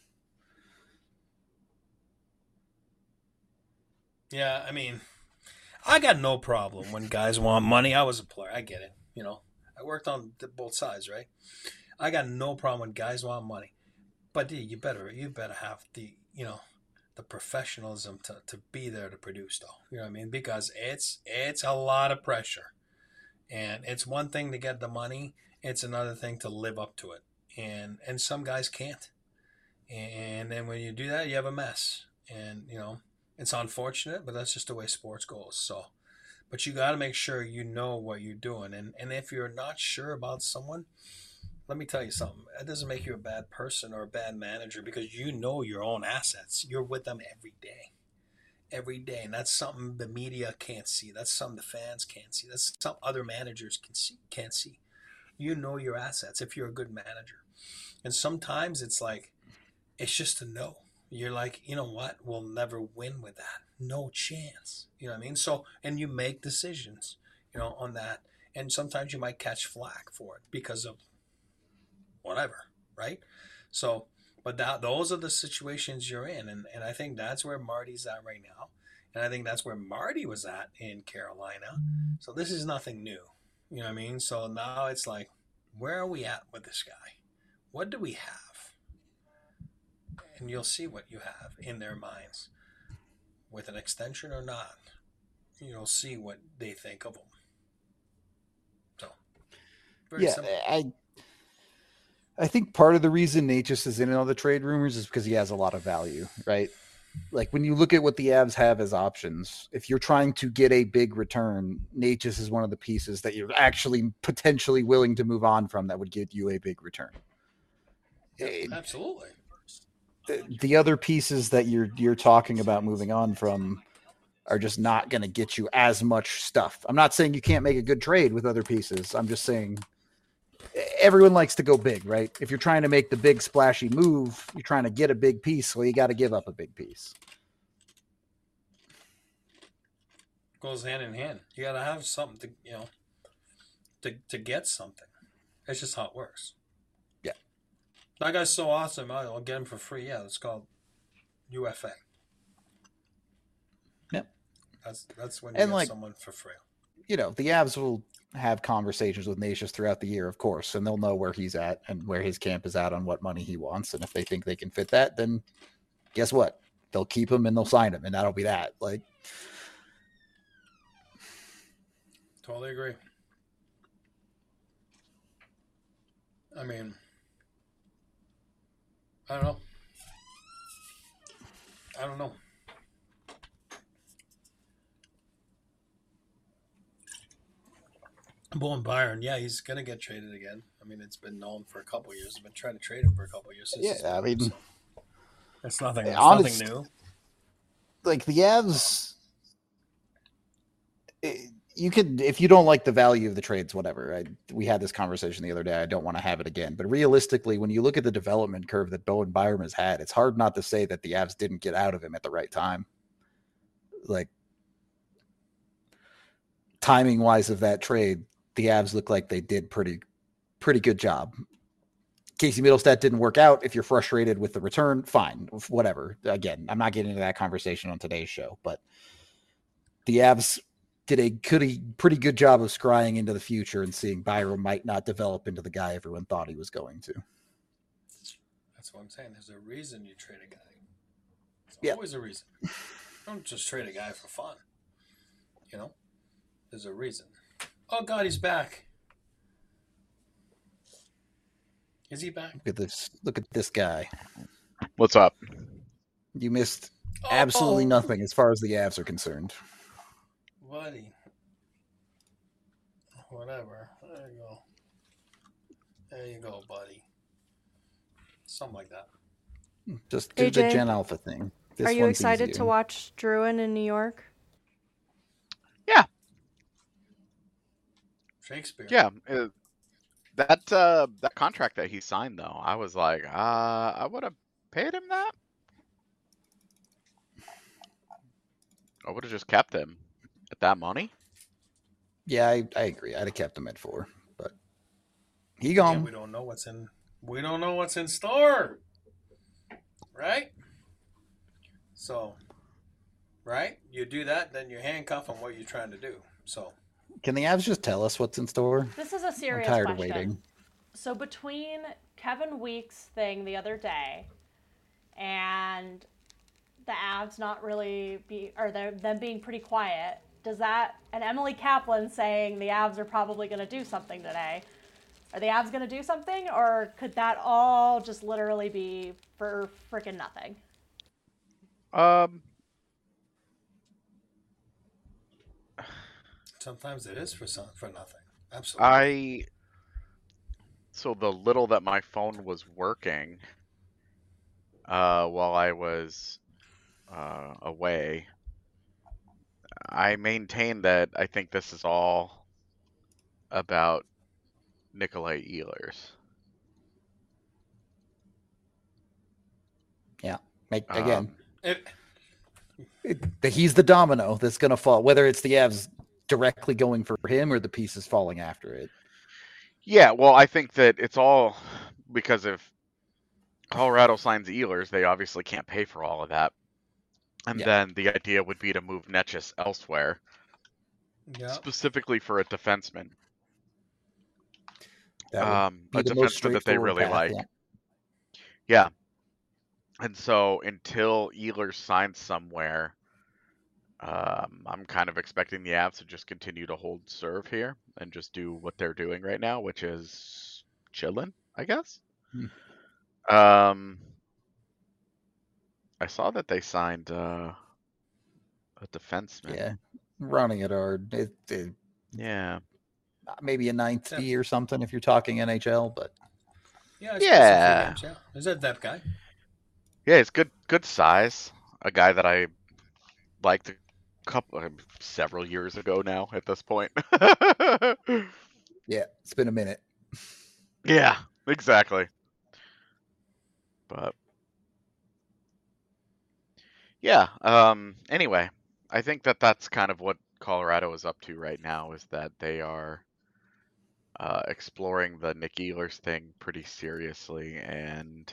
Yeah, I mean, I got no problem when guys want money. I was a player. I get it. You know, I worked on both sides, right? I got no problem when guys want money. But dude, you better you better have the you know the professionalism to, to be there to produce though. You know what I mean? Because it's it's a lot of pressure. And it's one thing to get the money, it's another thing to live up to it. And and some guys can't. And then when you do that, you have a mess. And you know, it's unfortunate, but that's just the way sports goes. So but you got to make sure you know what you're doing. And and if you're not sure about someone, let me tell you something. That doesn't make you a bad person or a bad manager because you know your own assets. You're with them every day, every day, and that's something the media can't see. That's something the fans can't see. That's something other managers can see, can't see. You know your assets if you're a good manager, and sometimes it's like it's just a no. You're like, you know what? We'll never win with that. No chance. You know what I mean? So, and you make decisions, you know, on that, and sometimes you might catch flack for it because of whatever, right? So, but that those are the situations you're in, and and I think that's where Marty's at right now, and I think that's where Marty was at in Carolina. So this is nothing new, you know what I mean? So now it's like, where are we at with this guy? What do we have? And you'll see what you have in their minds, with an extension or not. You'll see what they think of him. So very Yeah, simple. I I think part of the reason Natchez is in all the trade rumors is because he has a lot of value, right? Like when you look at what the Avs have as options, if you're trying to get a big return, Natchez is one of the pieces that you're actually potentially willing to move on from that would get you a big return. Yep, It, absolutely. the, the other pieces that you're you're talking about moving on from are just not going to get you as much stuff. I'm not saying you can't make a good trade with other pieces. I'm just saying everyone likes to go big, right? If you're trying to make the big splashy move, you're trying to get a big piece, well, you got to give up a big piece. Goes hand in hand. You got to have something to, you know, to, to get something. That's just how it works. Yeah. That guy's so awesome. I'll get him for free. Yeah, it's called U F A. Yep. That's that's when you and get like, someone for free. You know, the Avs will have conversations with Natchez throughout the year, of course, and they'll know where he's at and where his camp is at on what money he wants. And if they think they can fit that, then guess what? They'll keep him and they'll sign him, and that'll be that. Like, Totally agree. I mean, I don't know. I don't know. Bowen Byron, yeah, he's gonna get traded again. I mean, it's been known for a couple of years. I've been trying to trade him for a couple of years. Since yeah, I mean, so. It's nothing. It's honest, nothing new. Like the Avs, it, you could, if you don't like the value of the trades, whatever. I, we had this conversation the other day. I don't want to have it again. But realistically, when you look at the development curve that Bowen Byram has had, it's hard not to say that the Avs didn't get out of him at the right time. Like, timing wise of that trade, the Avs look like they did pretty, pretty good job. Casey Middlestat didn't work out. If you're frustrated with the return, fine, whatever. Again, I'm not getting into that conversation on today's show, but the Avs did a pretty good job of scrying into the future and seeing Byram might not develop into the guy everyone thought he was going to. That's what I'm saying. There's a reason you trade a guy. There's yeah. always a reason. You don't just trade a guy for fun. You know? There's a reason. Oh, God, he's back. Is he back? Look at this. Look at this guy. What's up? You missed absolutely oh. nothing as far as the Avs are concerned. Buddy. whatever. There you go. There you go, buddy. Something like that. Just do the A J, Gen Alpha thing. This are you one's excited easier. to watch Druin in New York? Yeah, Shakespeare. yeah. uh, that uh, that contract that he signed, though, I was like, uh, I would have paid him that. I would have just kept him at that money. Yeah, I, I agree. I'd have kept him at four, but he Yeah, gone. we don't know what's in. We don't know what's in store, right? So, right? You do that, then you handcuff on what you're trying to do. So, Can the Avs just tell us what's in store? This is a I'm serious tired question. of waiting. So between Kevin Weeks' thing the other day and the Avs not really be, or them being pretty quiet, does that, and Emily Kaplan saying the Avs are probably going to do something today, are the Avs going to do something, or could that all just literally be for freaking nothing? Um, sometimes it is for some, for nothing. Absolutely. I so the little that my phone was working uh, while I was uh, away, I maintain that I think this is all about Nikolai Ehlers. Yeah. Make, Um, again, It, it- he's the domino that's going to fall, whether it's the Avs directly going for him or the pieces falling after it. Yeah, well, I think that it's all because if Colorado signs Ehlers, they obviously can't pay for all of that. And Yeah. then the idea would be to move Netchus elsewhere, yeah. specifically for a defenseman. That would Um, be a the most defenseman that they straightforward really path, like. yeah. Yeah. And so until Ehlers signs somewhere, um, I'm kind of expecting the Avs to just continue to hold serve here and just do what they're doing right now, which is chilling, I guess. Hmm. Um, I saw that they signed uh, a defenseman. Yeah. Running it hard. It, it, Yeah. maybe a ninth Yeah. D or something if you're talking N H L, but Yeah. it's Yeah. Games, yeah. Is that that guy? Yeah, it's good, good size. A guy that I liked a couple, uh, several years ago now. At this point. yeah, it's been a minute. Yeah, exactly. But yeah. Um. Anyway, I think that that's kind of what Colorado is up to right now. Is that they are uh, exploring the Nick Ehlers thing pretty seriously, and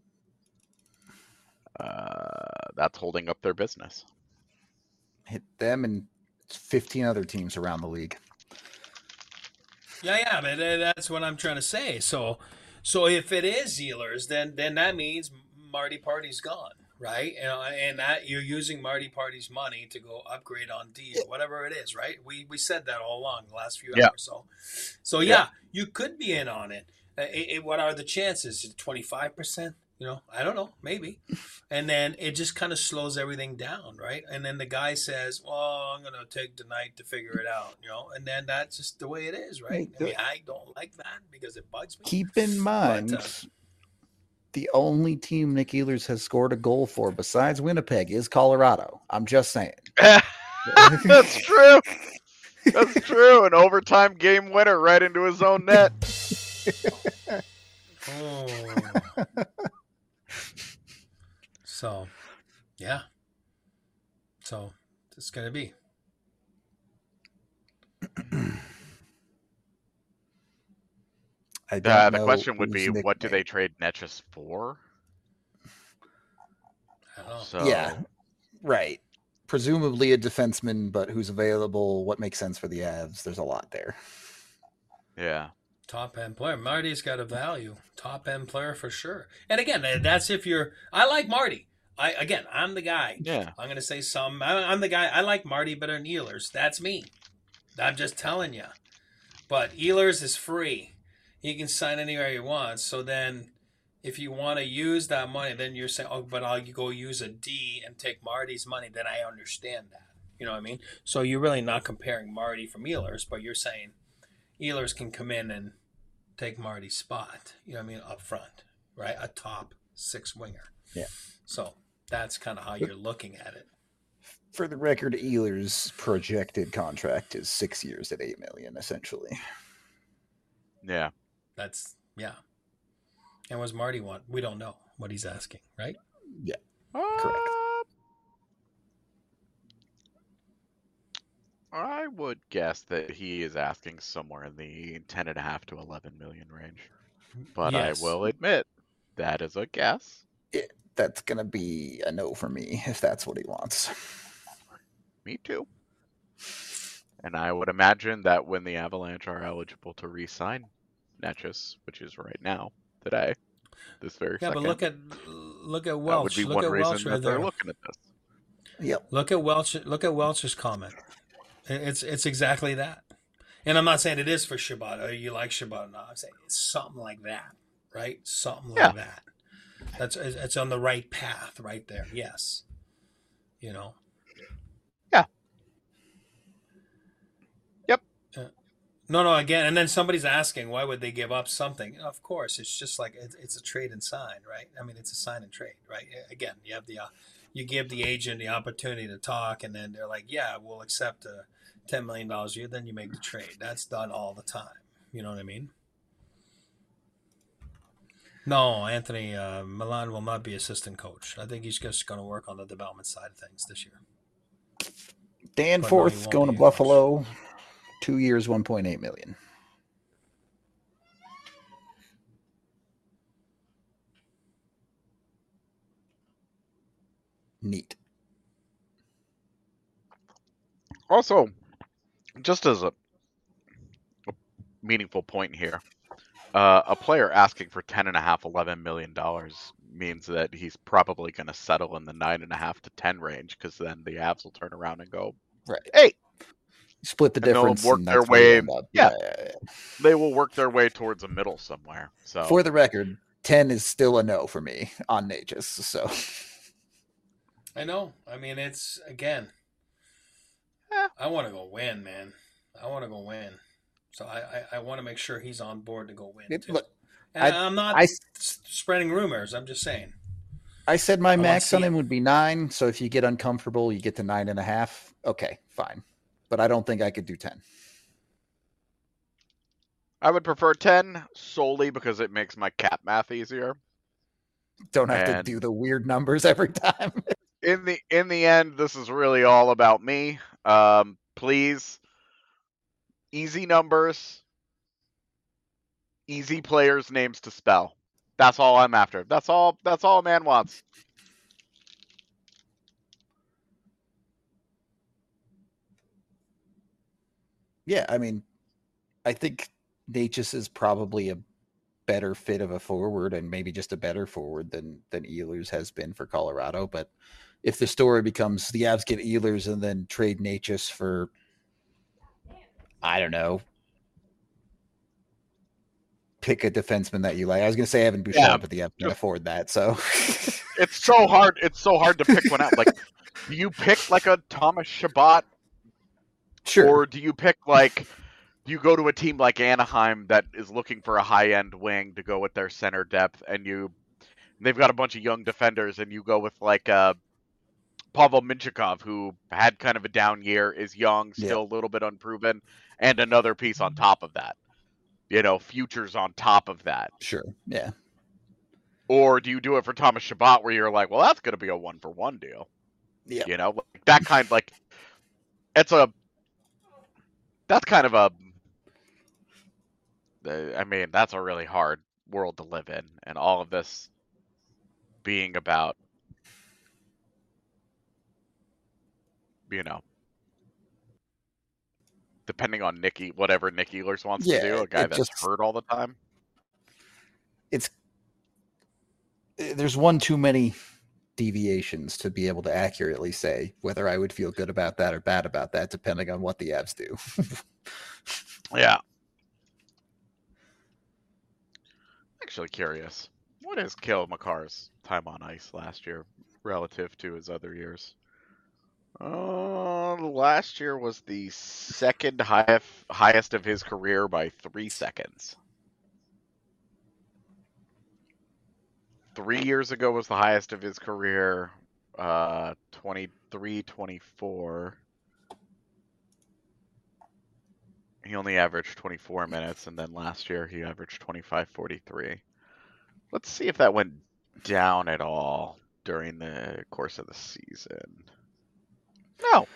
uh, that's holding up their business. Hit them and fifteen other teams around the league. Yeah, yeah, but uh, that's what I'm trying to say. So, so if it is Ehlers, then then that means Marty Party's gone, right? You know, and that you're using Marty Party's money to go upgrade on D or whatever it is, right? We we said that all along the last few Yeah. hours. So, so yeah, Yeah. you could be in on it. Uh, it, it what are the chances? twenty-five percent? You know, I don't know, maybe. And then it just kind of slows everything down, right? And then the guy says, well, I'm going to take the night to figure it out, you know? And then that's just the way it is, right? I mean, I don't like that because it bugs me. Keep in mind, uh, the only team Nick Ehlers has scored a goal for besides Winnipeg is Colorado. I'm just saying. That's true. That's true. An overtime game winner right into his own net. Oh. So, yeah. So, it's going to be. I don't Uh, the know question would whose be, what do nickname- they trade Netchus for? I don't know. So Yeah, right. Presumably a defenseman, but who's available? What makes sense for the Avs? There's a lot there. yeah. Top end player. Marty's got a value. Top end player for sure. And again, that's if you're. I like Marty. I again, I'm the guy. Yeah. I'm gonna say some. I'm the guy. I like Marty better than Ehlers. That's me. I'm just telling you. But Ehlers is free. He can sign anywhere he wants. So then, if you want to use that money, then you're saying, "Oh, but I'll go use a D and take Marty's money." Then I understand that. You know what I mean? So you're really not comparing Marty from Ehlers, but you're saying, Ehlers can come in and take Marty's spot. You know what I mean? Up front, right? A top six winger. Yeah. So that's kind of how you're looking at it. For the record, Ehlers' projected contract is six years at eight million, essentially. Yeah. That's yeah. And what's Marty want? We don't know what he's asking, right? Yeah. Uh, Correct. I would guess that he is asking somewhere in the ten and a half to eleven million range. But Yes. I will admit that is a guess. It, that's gonna be a no for me if that's what he wants. Me too. And I would imagine that when the Avalanche are eligible to re-sign Necas, which is right now, today, this very yeah, second. but look at look at Welch. That would be look one at reason Welch that right they're there. looking at this. Yep. Look at Welch. Look at Welch's comment. It's it's exactly that. And I'm not saying it is for Shabbat. Or you like Shabbat or not. I'm saying it's something like that, right? Something like Yeah. that. That's it's on the right path right there. Yes. You know. Yeah. Yep. Uh, no, no. Again, and then somebody's asking, why would they give up something? Of course, it's just like it's, it's a trade and sign, right? I mean, it's a sign and trade, right? Again, you have the uh, you give the agent the opportunity to talk, and then they're like, yeah, we'll accept a ten million dollars a year. Then you make the trade. That's done all the time. You know what I mean? No, Anthony uh, Milan will not be assistant coach. I think he's just going to work on the development side of things this year. Dan But no, he Forth won't going be to a coach. Buffalo, two years, one point eight million. Neat. Also, just as a, a meaningful point here, uh, a player asking for ten and a half, eleven million dollars means that he's probably going to settle in the nine and a half to ten range, because then the Avs will turn around and go, Right. hey, Split the and they'll difference. work and their that's where you way. end up. Yeah. Yeah, yeah, yeah. They will work their way towards a middle somewhere. So For the record, ten is still a no for me on Nages. So I know. I mean, it's again. Eh. I want to go win, man. I want to go win. So I, I, I want to make sure he's on board to go win. It- too. look, and I- I'm not I- s- spreading rumors. I'm just saying. I said my wanna max on see- him would be nine. So if you get uncomfortable, you get to nine and a half. Okay, fine. But I don't think I could do ten. I would prefer ten solely because it makes my cap math easier. Don't have And- to do the weird numbers every time. In the in the end, this is really all about me. Um, please, easy numbers, easy players' names to spell. That's all I'm after. That's all. That's all a man wants. Yeah, I mean, I think Natchez is probably a better fit of a forward and maybe just a better forward than than Ehlers has been for Colorado. But if the story becomes the Avs get Ehlers and then trade Natchez for, I don't know, pick a defenseman that you like. I was going to say Evan Bouchard, Yeah, but the Avs can just- afford that. So It's so hard. It's so hard to pick one out. Like, do you pick like a Thomas Shabbat, sure. or do you pick like? Do you go to a team like Anaheim that is looking for a high-end wing to go with their center depth, and you they've got a bunch of young defenders, and you go with like uh, Pavel Minchikov, who had kind of a down year, is young, still a little bit unproven, and another piece on top of that. You know, futures on top of that. Sure. Yeah. Or do you do it for Thomas Shabbat, where you're like, well, that's going to be a one-for-one deal. Yeah. You know, like that kind, like it's a that's kind of a. I mean, that's a really hard world to live in, and all of this being about, you know, depending on Nicky, whatever Nick Ehlers wants Yeah, to do, a guy it that's just- hurt all the time. It's there's one too many deviations to be able to accurately say whether I would feel good about that or bad about that, depending on what the Avs do. Yeah. Actually curious. What is Cale Makar's time on ice last year relative to his other years? Uh, last year was the second highest highest of his career by three seconds. Three years ago was the highest of his career, uh, twenty-three twenty-four. He only averaged twenty-four minutes, and then last year he averaged twenty-five forty-three. Let's see if that went down at all during the course of the season. No.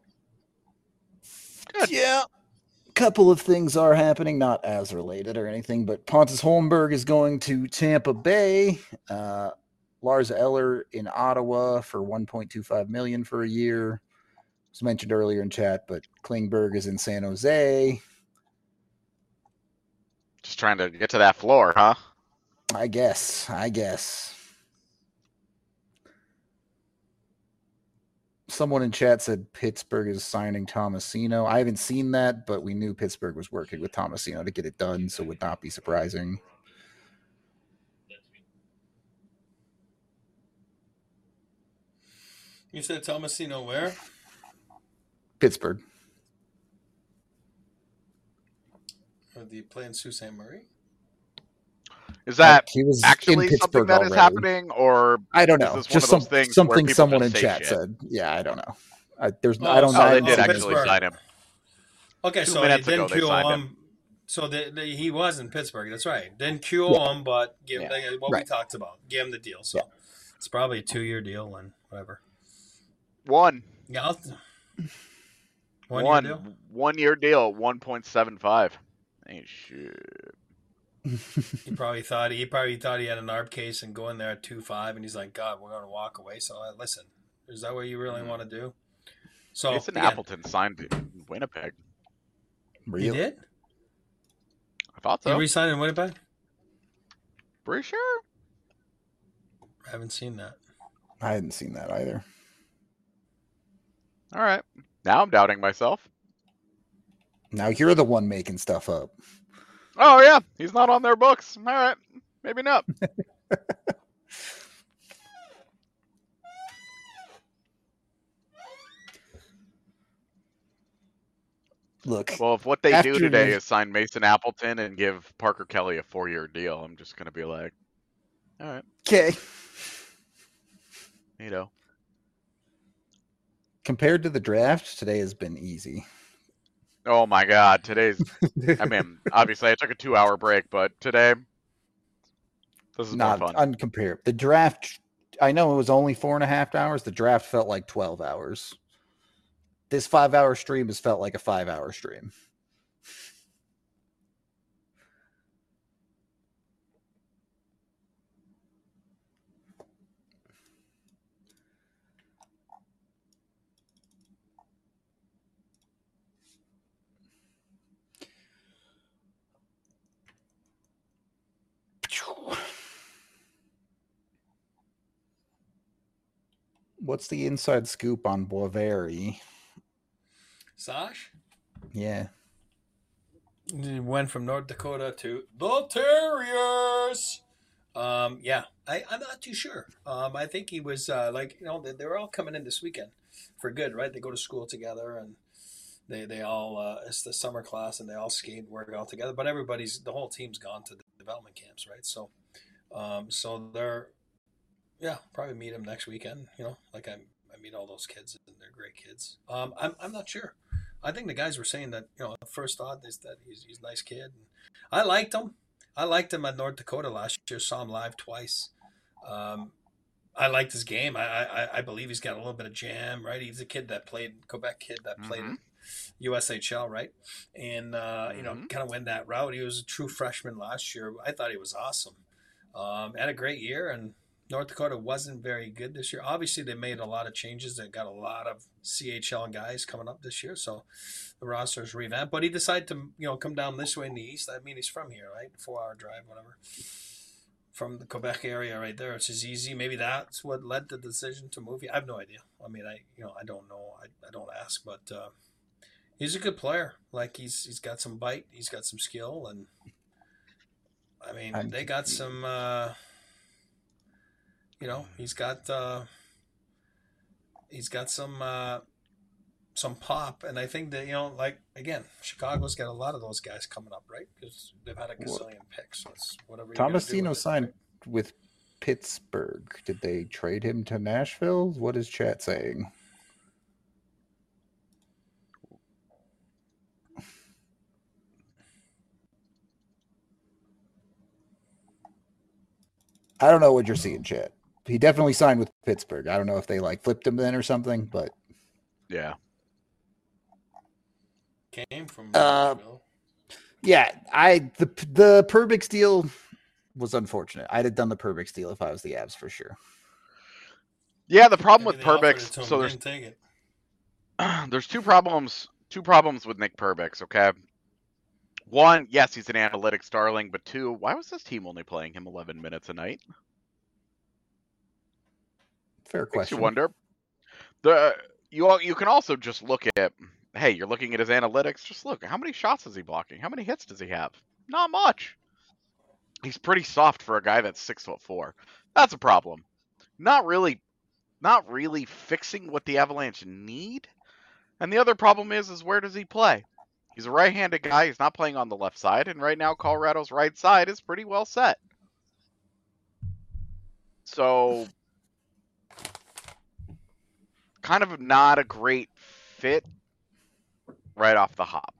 Good. Yeah. A couple of things are happening, not as related or anything, but Pontus Holmberg is going to Tampa Bay. Uh, Lars Eller in Ottawa for one point two five million dollars for a year. It was mentioned earlier in chat, but Klingberg is in San Jose. Just trying to get to that floor, huh? I guess. I guess. Someone in chat said Pittsburgh is signing Tomasino. I haven't seen that, but we knew Pittsburgh was working with Tomasino to get it done, so it would not be surprising. You said Tomasino where? Pittsburgh. Or the play in Sault Ste. Marie? Is that he was actually in something Pittsburgh that is already. happening, or I don't know. is this Just one of some, those things something where someone in say chat shit? said. Yeah, I don't know. I, there's, Oh, I don't so- know. Oh, they Oh, did so actually Pittsburgh. sign him. Okay, Two so minutes they ago didn't they Q O signed him. him. So the, the, he was in Pittsburgh. That's right. Didn't Q O Yeah. him, but give Yeah. like, what Right. we talked about. Give him the deal. So Yeah. it's probably a two-year deal and whatever. One. Yeah, I'll, one, One. year deal. One year deal, one point seven five. Ain't shit. He probably thought he probably thought he had an A R B case and go in there at two five, and he's like, God, we're going to walk away. So uh, listen, is that what you really Mhm. want to do? So Mason again, Appleton signed in Winnipeg. he Real. did. I thought He so. re-signed in Winnipeg. Pretty sure. I haven't seen that. I hadn't seen that either. All right. Now I'm doubting myself. Now you're the one making stuff up. Oh yeah, he's not on their books. All right, maybe not. Look, Well, if what they After do today the- is sign Mason Appleton and give Parker Kelly a four-year deal, I'm just gonna be like, all right, okay. you know. Compared to the draft, today has been easy. Oh my God, today's. I mean, obviously I took a two-hour break, but today, this is not more fun. uncomparable. The draft, I know it was only four and a half hours. The draft felt like twelve hours. This five-hour stream has felt like a five-hour stream. What's the inside scoop on Boisveri? Sash? Yeah. He went from North Dakota to the Terriers. Um, yeah, I, I'm not too sure. Um, I think he was uh, like, you know, they, they were all coming in this weekend for good, right? They go to school together and they they all uh, it's the summer class and they all skate and work all together. But everybody's the whole team's gone to the development camps, right? So, um, so they're yeah, probably meet him next weekend. You know, like I I meet all those kids and they're great kids. Um, I'm I'm not sure. I think the guys were saying that, you know, the first thought is that he's, he's a nice kid. I liked him. I liked him at North Dakota last year. Saw him live twice. Um, I liked his game. I, I I believe he's got a little bit of jam, right? He's a kid that played, Quebec kid that played Mhm. U S H L, right? And, uh, you know, Mhm. kind of went that route. He was a true freshman last year. I thought he was awesome. Um, had a great year, and North Dakota wasn't very good this year. Obviously, they made a lot of changes. They got a lot of C H L guys coming up this year, so the roster's revamped. But he decided to, you know, come down this way in the east. I mean, he's from here, right? Four-hour drive, whatever, from the Quebec area, right there. It's just easy. Maybe that's what led the decision to move. I have no idea. I mean, I, you know, I don't know. I, I don't ask, but uh, he's a good player. Like he's he's got some bite. He's got some skill, and I mean, I'm they got some. Uh, you know, he's got uh, he's got some uh, some pop, and I think that you know, like again, Chicago's got a lot of those guys coming up, right? Because they've had a What? gazillion picks. So it's whatever you're gonna do Tomasino with it, signed right? with Pittsburgh. Did they trade him to Nashville? What is chat saying? I don't know what you're seeing, chat. He definitely signed with Pittsburgh. I don't know if they like flipped him then or something, but Yeah. Came from Uh, Nashville. yeah, I the the Perbix deal was unfortunate. I'd have done the Perbix deal if I was the Avs for sure. Yeah, the problem Maybe with they offered it Perbix, to him, so he there's didn't take it. there's two problems two problems with Nick Perbix, okay? One, yes, he's an analytics darling, but two, why was this team only playing him eleven minutes a night? Fair Makes question. you wonder. The you all, you can also just look at, hey, you're looking at his analytics, just look, how many shots is he blocking? How many hits does he have? Not much. He's pretty soft for a guy that's six foot four. That's a problem. Not really not really fixing what the Avalanche need. And the other problem is is where does he play? He's a right-handed guy, he's not playing on the left side, and right now Colorado's right side is pretty well set. So kind of not a great fit right off the hop.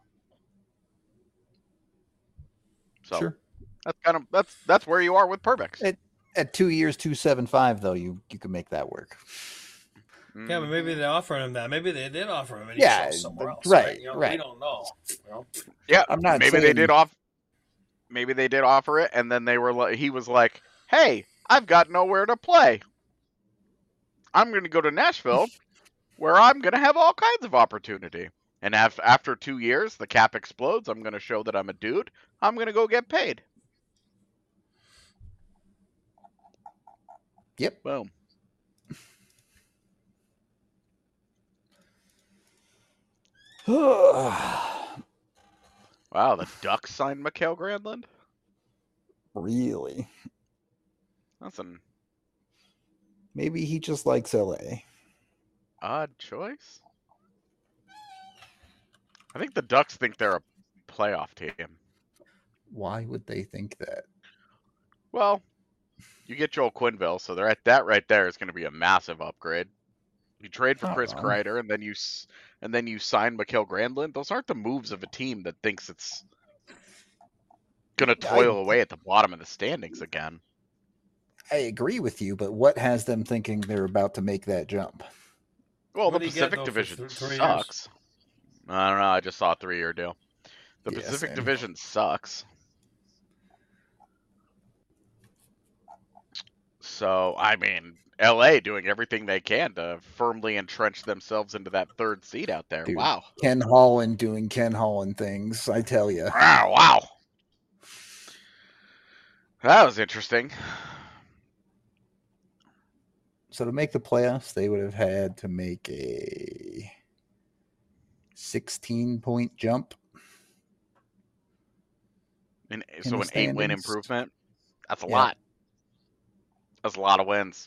So Sure. that's kind of that's that's where you are with Perbix. At, at two years, two seven five though, you you can make that work. Yeah, but maybe they offered him that. Maybe they did offer him, and he Yeah, chose somewhere else. right, Right? You know, right. We don't know. You know? Yeah, I'm not maybe they saying- did off. Maybe they did offer it, and then they were like, he was like, "Hey, I've got nowhere to play. I'm going to go to Nashville, where I'm going to have all kinds of opportunity. And af- after two years, the cap explodes. I'm going to show that I'm a dude. I'm going to go get paid." Yep. Boom. Wow, the Ducks signed Mikael Granlund? Really? That's an Maybe he just likes L A. odd choice. I think the Ducks think they're a playoff team. Why would they think that? Well, you get Joel Quenneville, so they're at that right there is going to be a massive upgrade. You trade for Not Chris wrong. Kreider, and then you s- and then you sign Mikael Granlund. Those aren't the moves of a team that thinks it's going to toil I- away at the bottom of the standings again. I agree with you, but what has them thinking they're about to make that jump? Well, What the do you get, Pacific though, for Division th- three years? sucks. I don't know. I just saw a three-year deal. The Yeah, Pacific same. Division sucks. So, I mean, L A doing everything they can to firmly entrench themselves into that third seat out there. Dude. Wow. Ken Holland doing Ken Holland things, I tell you. Wow, wow. That was interesting. So to make the playoffs, they would have had to make a sixteen point jump. And In so the an eight-win standings. improvement, that's a Yeah. lot. That's a lot of wins.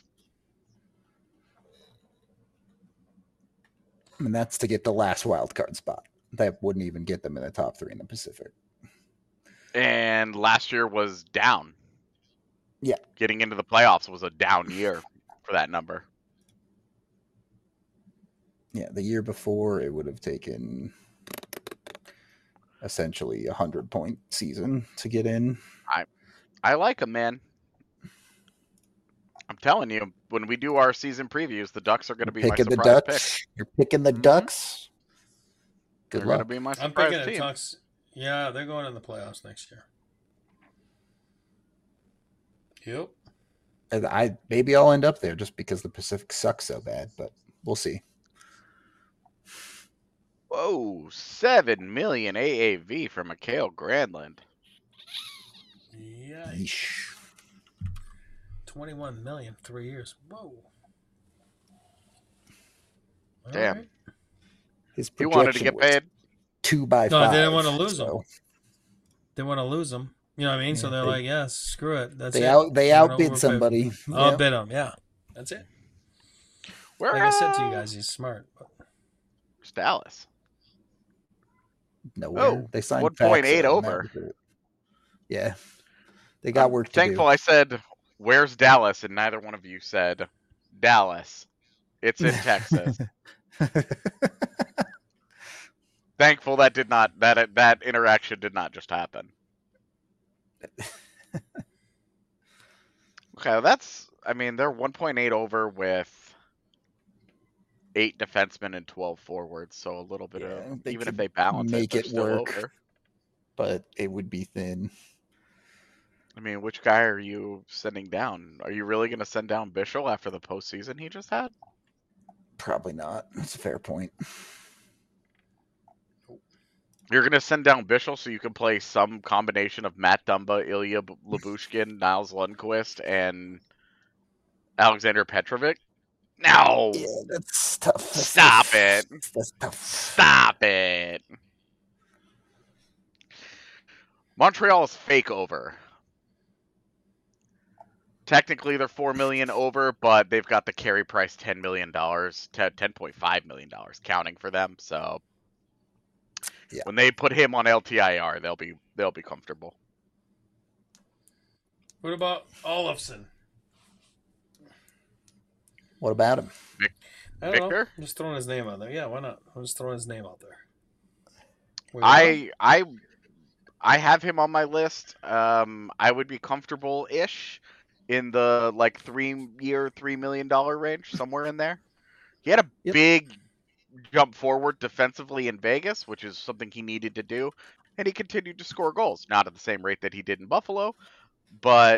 And that's to get the last wild card spot. That wouldn't even get them in the top three in the Pacific. And last year was down. Yeah. Getting into the playoffs was a down year for that number. Yeah, the year before it would have taken essentially a hundred point season to get in. I like them, man. I'm telling you, when we do our season previews, the Ducks are going to be my Picking the surprise pick. Ducks. You're picking the Mhm. Ducks. Good They're going to luck. be my I'm surprise picking the team. Ducks. Yeah, they're going in the playoffs next year. Yep. And I maybe I'll end up there just because the Pacific sucks so bad, but we'll see. Whoa, seven million A A V for Mikael Granlund. Yeah. Yeesh. twenty-one million, three years. Whoa. All Damn. right. His He wanted to projection get was paid. two by No, five. they didn't want to lose so him. They want to lose them. You know what I mean? so Yeah, they're they- like, yes, screw it. That's They it. out they We're gonna outbid overpay. somebody. I'll Yep. bid him. Yeah. That's it. Where, Like I said to you uh, guys, he's smart. But Where's Dallas? Nowhere. Oh, they signed one point eight Faxa, over. Yeah. They got I'm work to thankful do. I said, where's Dallas? And neither one of you said Dallas. It's in Texas. Thankful that did not that that interaction did not just happen. Okay, that's I mean they're one point eight over with eight defensemen and twelve forwards, so a little bit Yeah, of they even if could they balance it, make they're it still work. over. But it would be thin. I mean, which guy are you sending down? Are you really going to send down Bischel after the postseason he just had? Probably not. That's a fair point. You're going to send down Bischel so you can play some combination of Matt Dumba, Ilya Lyubushkin, Niles Lundqvist, and Alexander Petrovic? No! Yeah, that's tough. That's Stop tough. it! That's tough. Stop it! Montreal is fake over. Technically, they're four million dollars over, but they've got the carry price ten million dollars, ten point five million dollars counting for them. So yeah. when they put him on L T I R, they'll be they'll be comfortable. What about Olofsson? What about him? Vic, I don't Victor? know. I'm just throwing his name out there. Yeah, why not? I'm just throwing his name out there. Wait, I I I have him on my list. Um, I would be comfortable-ish in the like three-year, three million dollar range, somewhere in there. He had a Yep. big jump forward defensively in Vegas, which is something he needed to do, and he continued to score goals. Not at the same rate that he did in Buffalo, but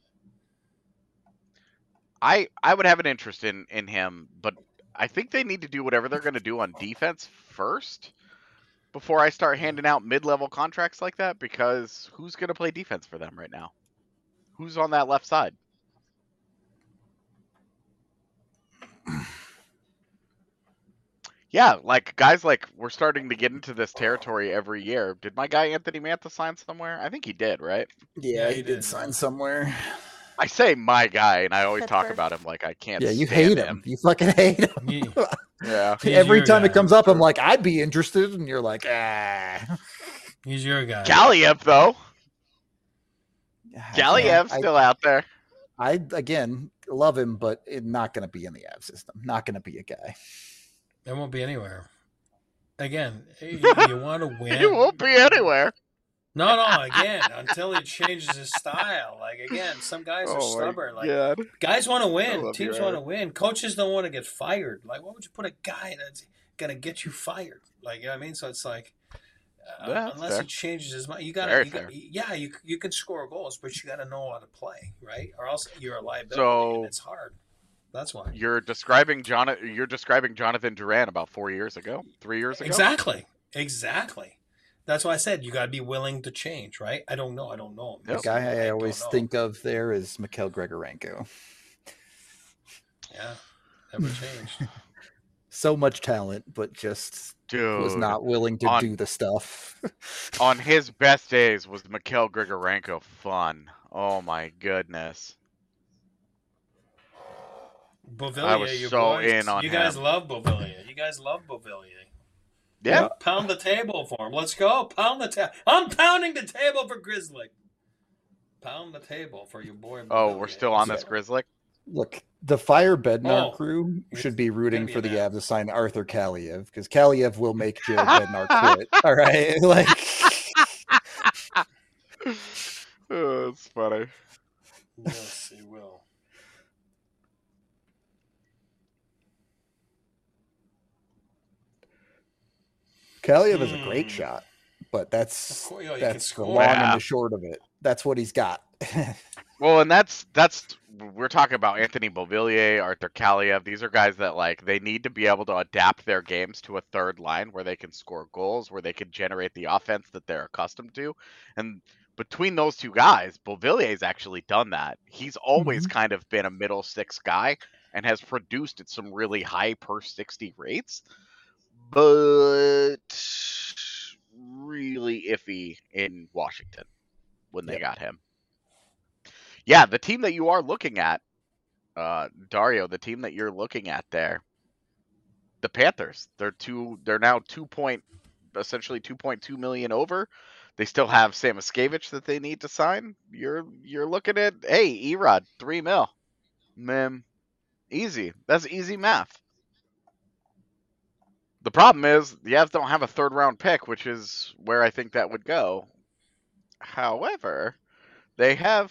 I I would have an interest in in him. But I think they need to do whatever they're going to do on defense first before I start handing out mid-level contracts like that, because who's going to play defense for them right now? Who's on that left side? Yeah, like guys like we're starting to get into this territory every year. Did my guy Anthony Mantha sign somewhere? I think he did, right? Yeah, Yeah, he, he did, did. sign somewhere. I say my guy, and I always talk Pittsburgh. about him like I can't. Yeah, you stand hate him. You fucking hate him. He- Yeah, He's Every your time guy. it comes up, I'm like, I'd be interested, and you're like, ah. He's your guy. Galiev though. Yeah, Galiev's I, still out there. I again love him, but it, not going to be in the Av system. Not going to be a guy. It won't be anywhere. Again, you, you want to win. He won't be anywhere. No, no. Again, until he changes his style. Like again, some guys are Oh my stubborn. Like God. guys want to I win. love you, Teams want to Aaron. win. Coaches don't want to get fired. Like, why would you put a guy that's gonna get you fired? Like, you know what I mean? So it's like, uh, Yeah, that's unless fair. he changes his mind, you gotta, Very you got, fair. yeah, you you can score goals, but you got to know how to play, right? Or else you're a liability, So- and it's hard. That's why. You're describing John. You're describing Jonathan Duran about four years ago, three years ago. Exactly. Exactly. That's why I said you got to be willing to change, right? I don't know. I don't know him. The Yep. guy I don't always know. think of there is Mikhail Grigorenko. Yeah, never changed. So much talent, but just Dude, was not willing to on- do the stuff. on his best days was Mikhail Grigorenko fun. Oh my goodness. Bovillier, I was you so boys, in on you guys him. love Bovillier. You guys love Bovillier. Yeah. Pound the table for him. Let's go. Pound the table. I'm pounding the table for Grizzly. Pound the table for your boy. Oh, Bovillier. we're still on Let's this go. Grizzly. Look, the Fire Bednar Oh, crew it's should be rooting gonna be for the an Avs to sign Arthur Kaliev, because Kaliev will make Jared Bednar quit. All right, like Oh, that's funny. Yes, he will. Kaliev is a great Hmm. shot, but that's Of course, yeah, he can that's the score. long and Yeah. the short of it. That's what he's got. Well, and that's that's we're talking about Anthony Beauvillier, Arthur Kaliev. These are guys that like they need to be able to adapt their games to a third line where they can score goals, where they can generate the offense that they're accustomed to. And between those two guys, Beauvillier's actually done that. He's always kind of been a middle six guy and has produced at some really high per sixty rates, but really iffy in Washington when they Yep. got him. Yeah, the team that you are looking at, uh, Dario, the team that you're looking at there, The Panthers. They're two. They're now two point, essentially two point two million over. They still have Samoskevich that they need to sign. You're you're looking at hey Erod three mil, mem, easy. That's easy math. The problem is the Avs don't have a third round pick, which is where I think that would go. However, they have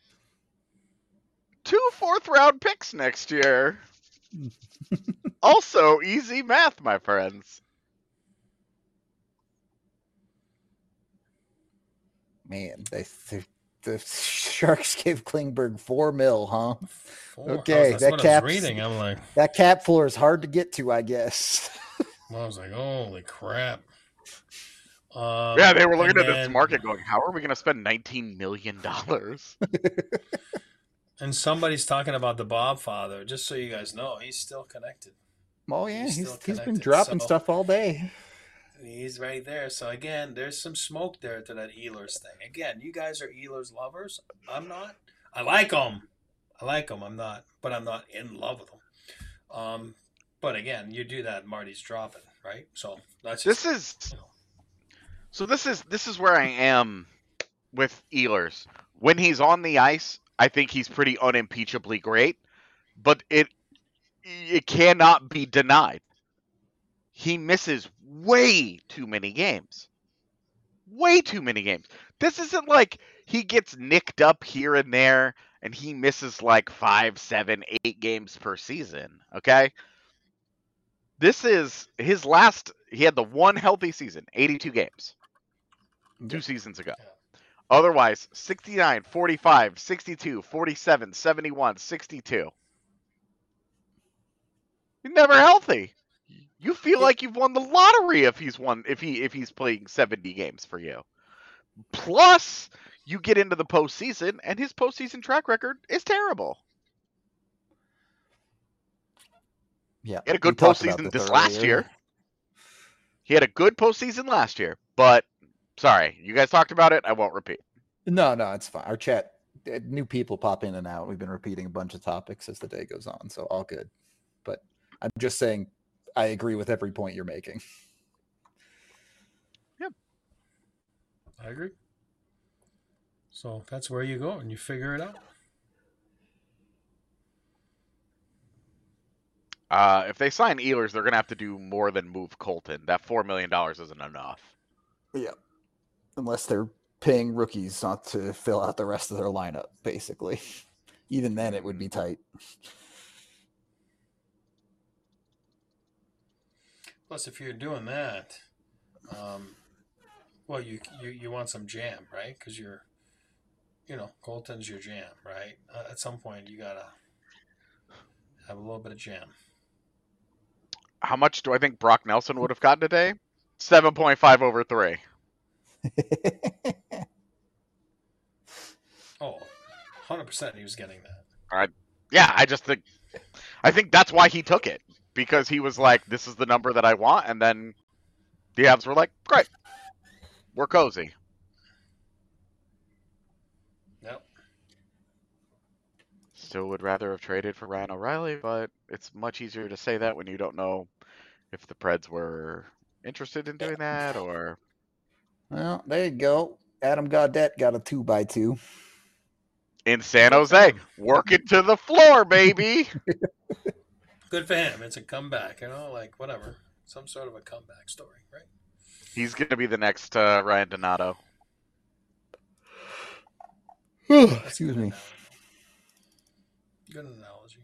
two fourth round picks next year. Also, easy math, my friends. Man, they, they the Sharks gave Klingberg four mil, huh? Four. Okay, that's that what cap. I was reading. I'm like, that cap floor is hard to get to, I guess. I was like, holy crap. Um, yeah, they were looking at then, this market going, how are we going to spend nineteen million dollars? And somebody's talking about the Bob father. Just so you guys know, he's still connected. Oh, yeah, he's, he's, he's been dropping so, stuff all day. He's right there. So, again, there's some smoke there to that Ehlers thing. Again, you guys are Ehlers lovers. I'm not. I like them. I like them. I'm not. But I'm not in love with them. Um, but, again, you do that, Marty's dropping, right? So, that's just, This is... You know. So this is this is where I am with Ehlers. When he's on the ice, I think he's pretty unimpeachably great, but it it cannot be denied. He misses way too many games. Way too many games. This isn't like he gets nicked up here and there and he misses like five, seven, eight games per season, okay? This is his last, he had the one healthy season, eighty-two games. Two seasons ago. Otherwise, sixty-nine, forty-five, sixty-two, forty-seven, seventy-one, sixty-two. You're never healthy. You feel yeah. like you've won the lottery if he's won if he if he's playing seventy games for you. Plus, you get into the postseason, and his postseason track record is terrible. Yeah, he had a good postseason this last earlier. year. He had a good postseason last year, but sorry, you guys talked about it. I won't repeat. No, no, it's fine. Our chat, new people pop in and out. We've been repeating a bunch of topics as the day goes on, so all good. But I'm just saying, I agree with every point you're making. Yep, I agree. So that's where you go and you figure it out. Uh, if they sign Ehlers, they're going to have to do more than move Colton. That four million dollars isn't enough. Yeah. Unless they're paying rookies not to fill out the rest of their lineup, basically. Even then, it would be tight. Plus, if you're doing that, um, well, you, you you want some jam, right? Because you're, you know, Colton's your jam, right? Uh, at some point, you got to have a little bit of jam. How much do I think Brock Nelson would have gotten today? seven point five over three. Oh, one hundred percent he was getting that. All right. Yeah, I just think I think that's why he took it. Because he was like, this is the number that I want, and then the Avs were like, great. We're cozy. Yep. Still would rather have traded for Ryan O'Reilly, but it's much easier to say that when you don't know if the Preds were interested in doing that or... Well, there you go. Adam Gaudette got a two by two. In San Jose. Work it to the floor, baby. Good for him. It's a comeback, you know, like whatever. Some sort of a comeback story, right? He's going to be the next uh, Ryan Donato. Excuse me. Good analogy.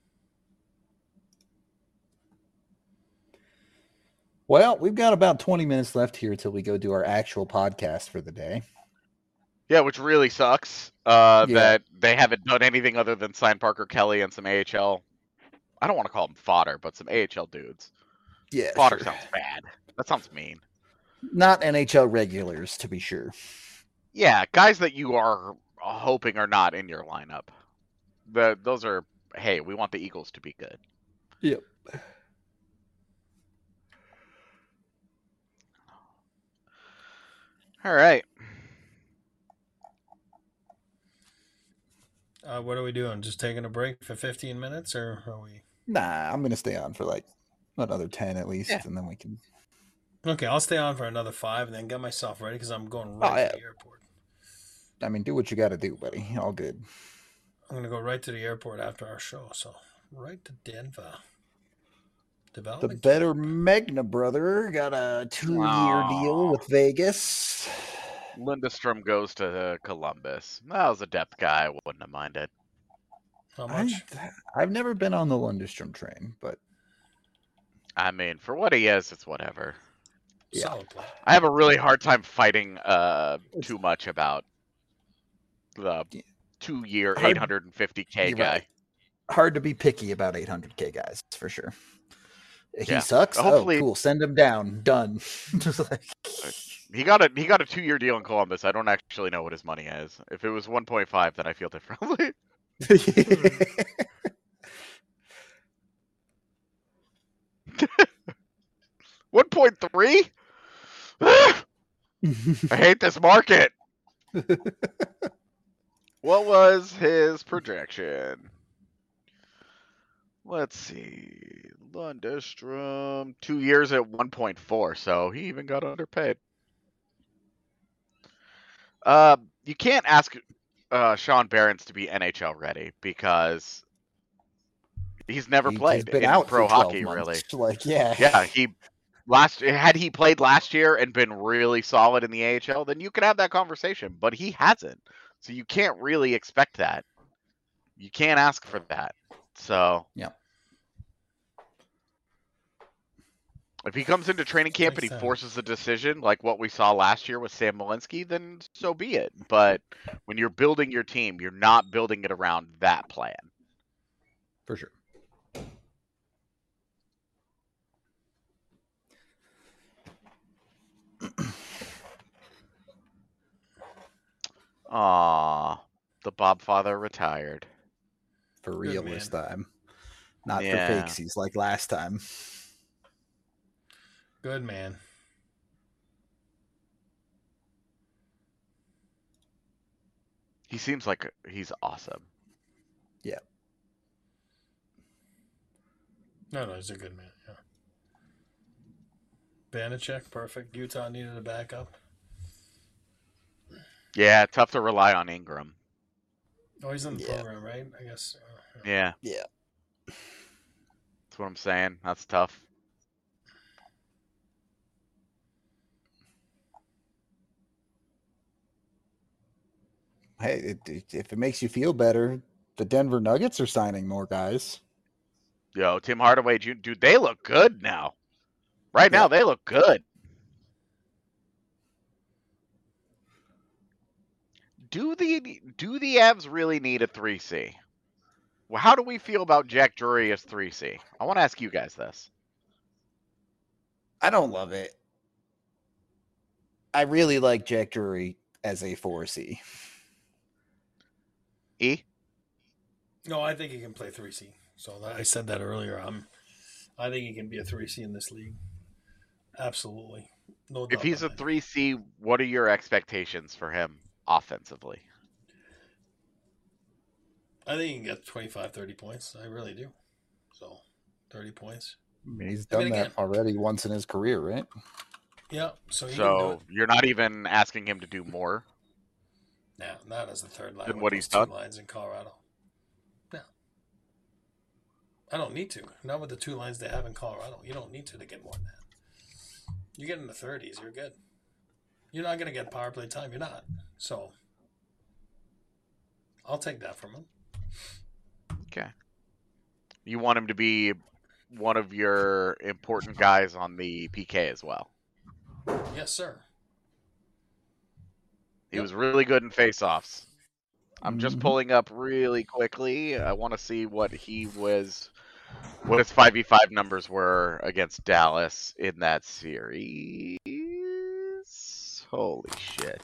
Well, we've got about twenty minutes left here till we go do our actual podcast for the day. Yeah, which really sucks uh, yeah. that they haven't done anything other than sign Parker Kelly and some A H L. I don't want to call them fodder, but some A H L dudes. Yeah, fodder sure. sounds bad. That sounds mean. Not N H L regulars, to be sure. Yeah, guys that you are hoping are not in your lineup. The those are, hey, we want the Eagles to be good. Yep. All right. Uh, what are we doing? Just taking a break for fifteen minutes, or are we? Nah, I'm gonna stay on for like Another ten at Yeah. least, and then we can. Okay, I'll stay on for another five and then get myself ready because I'm going right Oh to yeah. the airport. I mean, do what you got to do, buddy. All good. I'm gonna go right to the airport after our show. So right to Denver. The Development better camp. Magna brother got a two-year deal Aw. with Vegas. Lindstrom goes to Columbus. That was a depth guy. I wouldn't have minded. How I, much? I've never been on the Lundstrom train, but I mean, for what he is, it's whatever. yeah. Solid play. I have a really hard time fighting uh too much about the Yeah. two-year Hard- eight hundred fifty K You're guy. right. Hard to be picky about eight hundred K guys, for sure. He Yeah. sucks. Hopefully- Oh, cool. Send him down. Done. Just like... He got a he got a two-year deal in Columbus. I don't actually know what his money is. If it was one point five, then I feel differently. one point three? I hate this market. What was his projection? Let's see. Lundestrom, two years at one point four, so he even got underpaid. Uh, you can't ask uh, Sean Behrens to be N H L ready because he's never He- played he's been in out pro for twelve hockey, months. really. Like, yeah. Yeah, he last had he played last year and been really solid in the A H L, then you could have that conversation. But he hasn't, so you can't really expect that. You can't ask for that. So yeah. If he comes into training camp and he Makes sense. forces a decision like what we saw last year with Sam Malinsky, then so be it. But when you're building your team, you're not building it around that plan. For sure. Aw, the Bob father retired. For real man. this time. Not Yeah. for fakesies like last time. Good man. He seems like he's awesome. Yeah. No, no, he's a good man. Yeah. Banachek, perfect. Utah needed a backup. Yeah, tough to rely on Ingram. Oh, he's in the Yeah. program, right? I guess. Uh, Yeah, Yeah. that's what I'm saying. That's tough. Hey, it, it, if it makes you feel better, the Denver Nuggets are signing more guys. Yo, Tim Hardaway, Junior dude, they look good now. Right now, Yeah. they look good. Do the do the Avs really need a three C? Well, how do we feel about Jack Drury as three C? I want to ask you guys this. I don't love it. I really like Jack Drury as a four C. E? no, I think he can play three C. So that, I said that earlier. I'm, I think he can be a three C in this league. Absolutely. No doubt. If he's a about it. three C, what are your expectations for him offensively? I think he can get twenty-five, thirty points. I really do. So, thirty points. I mean, he's I done mean, that again- already once in his career, right? Yeah. So, he can do So it. you're not even asking him to do more? No, not as the third line. Than with what those he's two done? lines in Colorado. No. I don't need to. Not with the two lines they have in Colorado. You don't need to to get more than that. You get in the thirties, you're good. You're not going to get power play time. You're not. So, I'll take that from him. Okay. You want him to be one of your important guys on the P K as well. Yes, sir. He Yep. was really good in face-offs. I'm just Mhm. pulling up really quickly. I want to see what he was, what his five v five numbers were against Dallas in that series. Holy shit.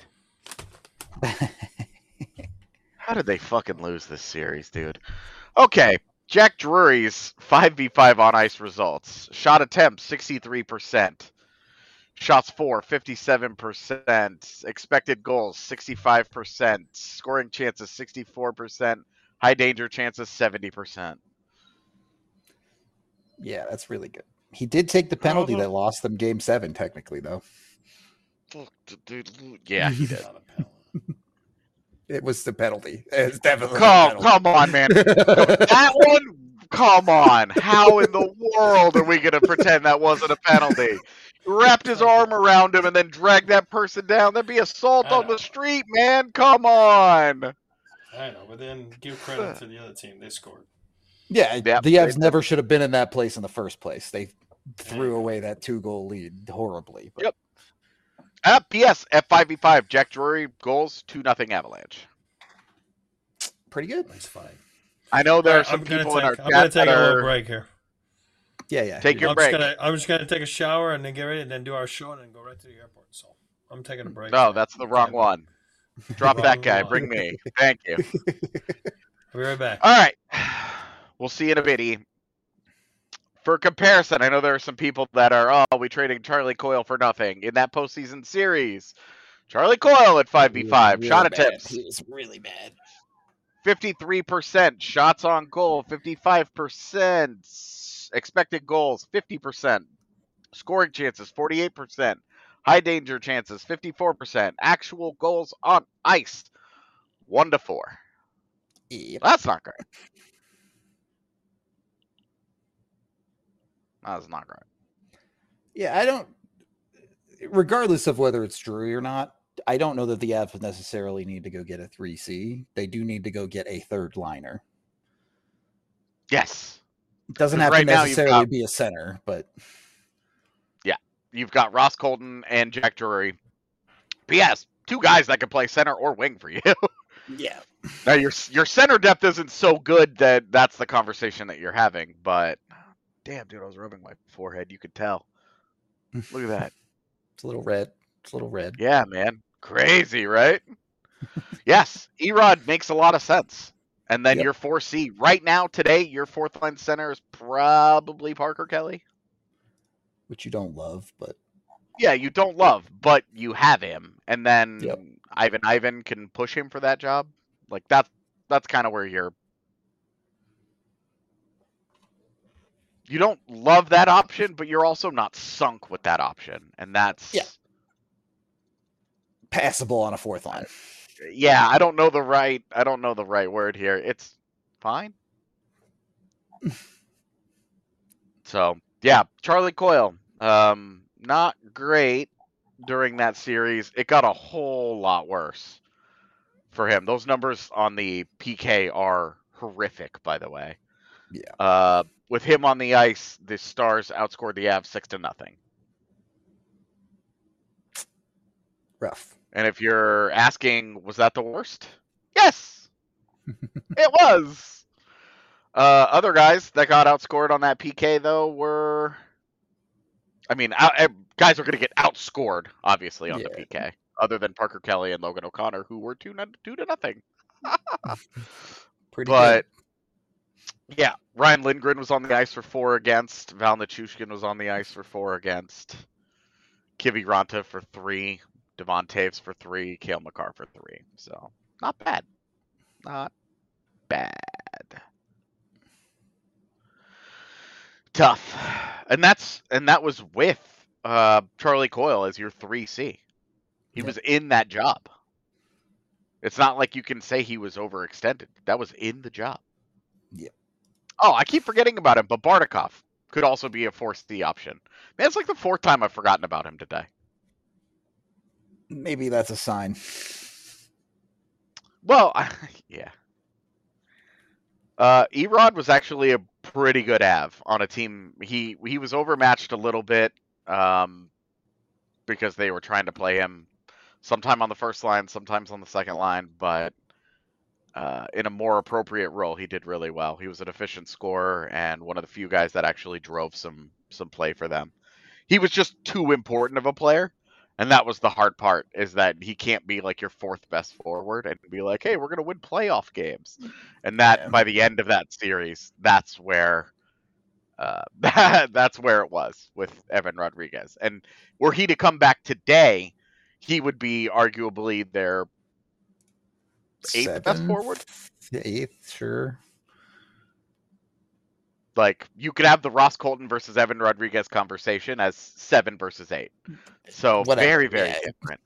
How did they fucking lose this series, dude? Okay, Jack Drury's five v five on ice results. Shot attempts, sixty-three percent. Shots for, fifty-seven percent. Expected goals, sixty-five percent. Scoring chances, sixty-four percent. High danger chances, seventy percent. Yeah, that's really good. He did take the penalty Oh, that lost them game seven, technically, though. Dude, yeah, he did. Not a penalty. It was the penalty. It's definitely a Come, penalty. come on, man. That one, come on. How in the world are we going to pretend that wasn't a penalty? He wrapped his arm around him and then dragged that person down. That'd be assault I on know. the street, man. Come on. I know, but then give credit to the other team. They scored. Yeah, Yep, the Avs they- never should have been in that place in the first place. They threw away that two-goal lead horribly. But Yep. Uh, P S F five v five, Jack Drury goals, two nothing Avalanche. pretty good. That's fine. I know there All are right, some I'm gonna people in our take, I'm gonna chat take that a little are... break here. Yeah, yeah. Take your I'm break. Just gonna, I'm just gonna take a shower and then get ready and then do our show and then go right to the airport. So I'm taking a break. No, that's the wrong one. Drop Wrong that guy. one. Bring me. Thank you. I'll be right back. All right. We'll see you in a bitty. For comparison, I know there are some people that are, oh, we traded Charlie Coyle for nothing in that postseason series. Charlie Coyle at five v five. Really Shot bad. attempts. He was really bad. fifty-three percent. Shots on goal. fifty-five percent. Expected goals. fifty percent. Scoring chances. forty-eight percent. High danger chances. fifty-four percent. Actual goals on ice. one to four. Yep. That's not great. That's not great. Yeah, I don't. Regardless of whether it's Drury or not, I don't know that the Avs would necessarily need to go get a three C. They do need to go get a third liner. Yes. It doesn't 'Cause have right to now you've necessarily got- be a center, but You've got Ross Colton and Jack Drury. P S Two guys that can play center or wing for you. yeah, Now your your center depth isn't so good that that's the conversation that you're having. But damn, dude, I was rubbing my forehead. You could tell. Look at that. it's a little red. It's a little red. Yeah, man, crazy, right? Yes, Erod makes a lot of sense. And then Yep. your four C right now today, your fourth line center is probably Parker Kelly. Which you don't love, but Yeah, you don't love, but you have him, and then Yep. Ivan Ivan can push him for that job. Like that's that's kind of where you're. You don't love that option, but you're also not sunk with that option, and that's Yeah. passable on a fourth line. yeah. I don't know the right. I don't know the right word here. It's fine. So yeah, Charlie Coyle, um, not great during that series. It got a whole lot worse for him. Those numbers on the P K are horrific, by the way. Yeah. Uh, with him on the ice, the Stars outscored the Avs six to nothing. Rough. And if you're asking, was that the worst? Yes, it was. Uh, other guys that got outscored on that P K though were, I mean, out, eh, guys are going to get outscored obviously on the Yeah. P K. Other than Parker Kelly and Logan O'Connor, who were two, two to nothing. Pretty But good. yeah, Ryan Lindgren was on the ice for four against. Val Nichushkin was on the ice for four against. Kivi Ranta for three. Devon Taves for three. Cale Makar for three. So not bad. Not bad. Tough. And that's and that was with uh, Charlie Coyle as your three C. He Yep. was in that job. It's not like you can say he was overextended. That was in the job. Yep. Oh, I keep forgetting about him, but Bardakov could also be a fourth C option. Man, it's like the fourth time I've forgotten about him today. Maybe that's a sign. Well, I, yeah. Uh, Erod was actually a pretty good Av on a team. He he was overmatched a little bit um, because they were trying to play him sometime on the first line, sometimes on the second line, but uh, in a more appropriate role, he did really well. He was an efficient scorer and one of the few guys that actually drove some some play for them. He was just too important of a player. And that was the hard part, is that he can't be like your fourth best forward and be like, hey, we're going to win playoff games. And that, Yeah. by the end of that series, that's where uh, that's where it was with Evan Rodriguez. And were he to come back today, he would be arguably their eighth best Seventh? forward. Eighth, sure. Like, you could have the Ross Colton versus Evan Rodriguez conversation as seven versus eight. So Whatever. very, very Yeah. different.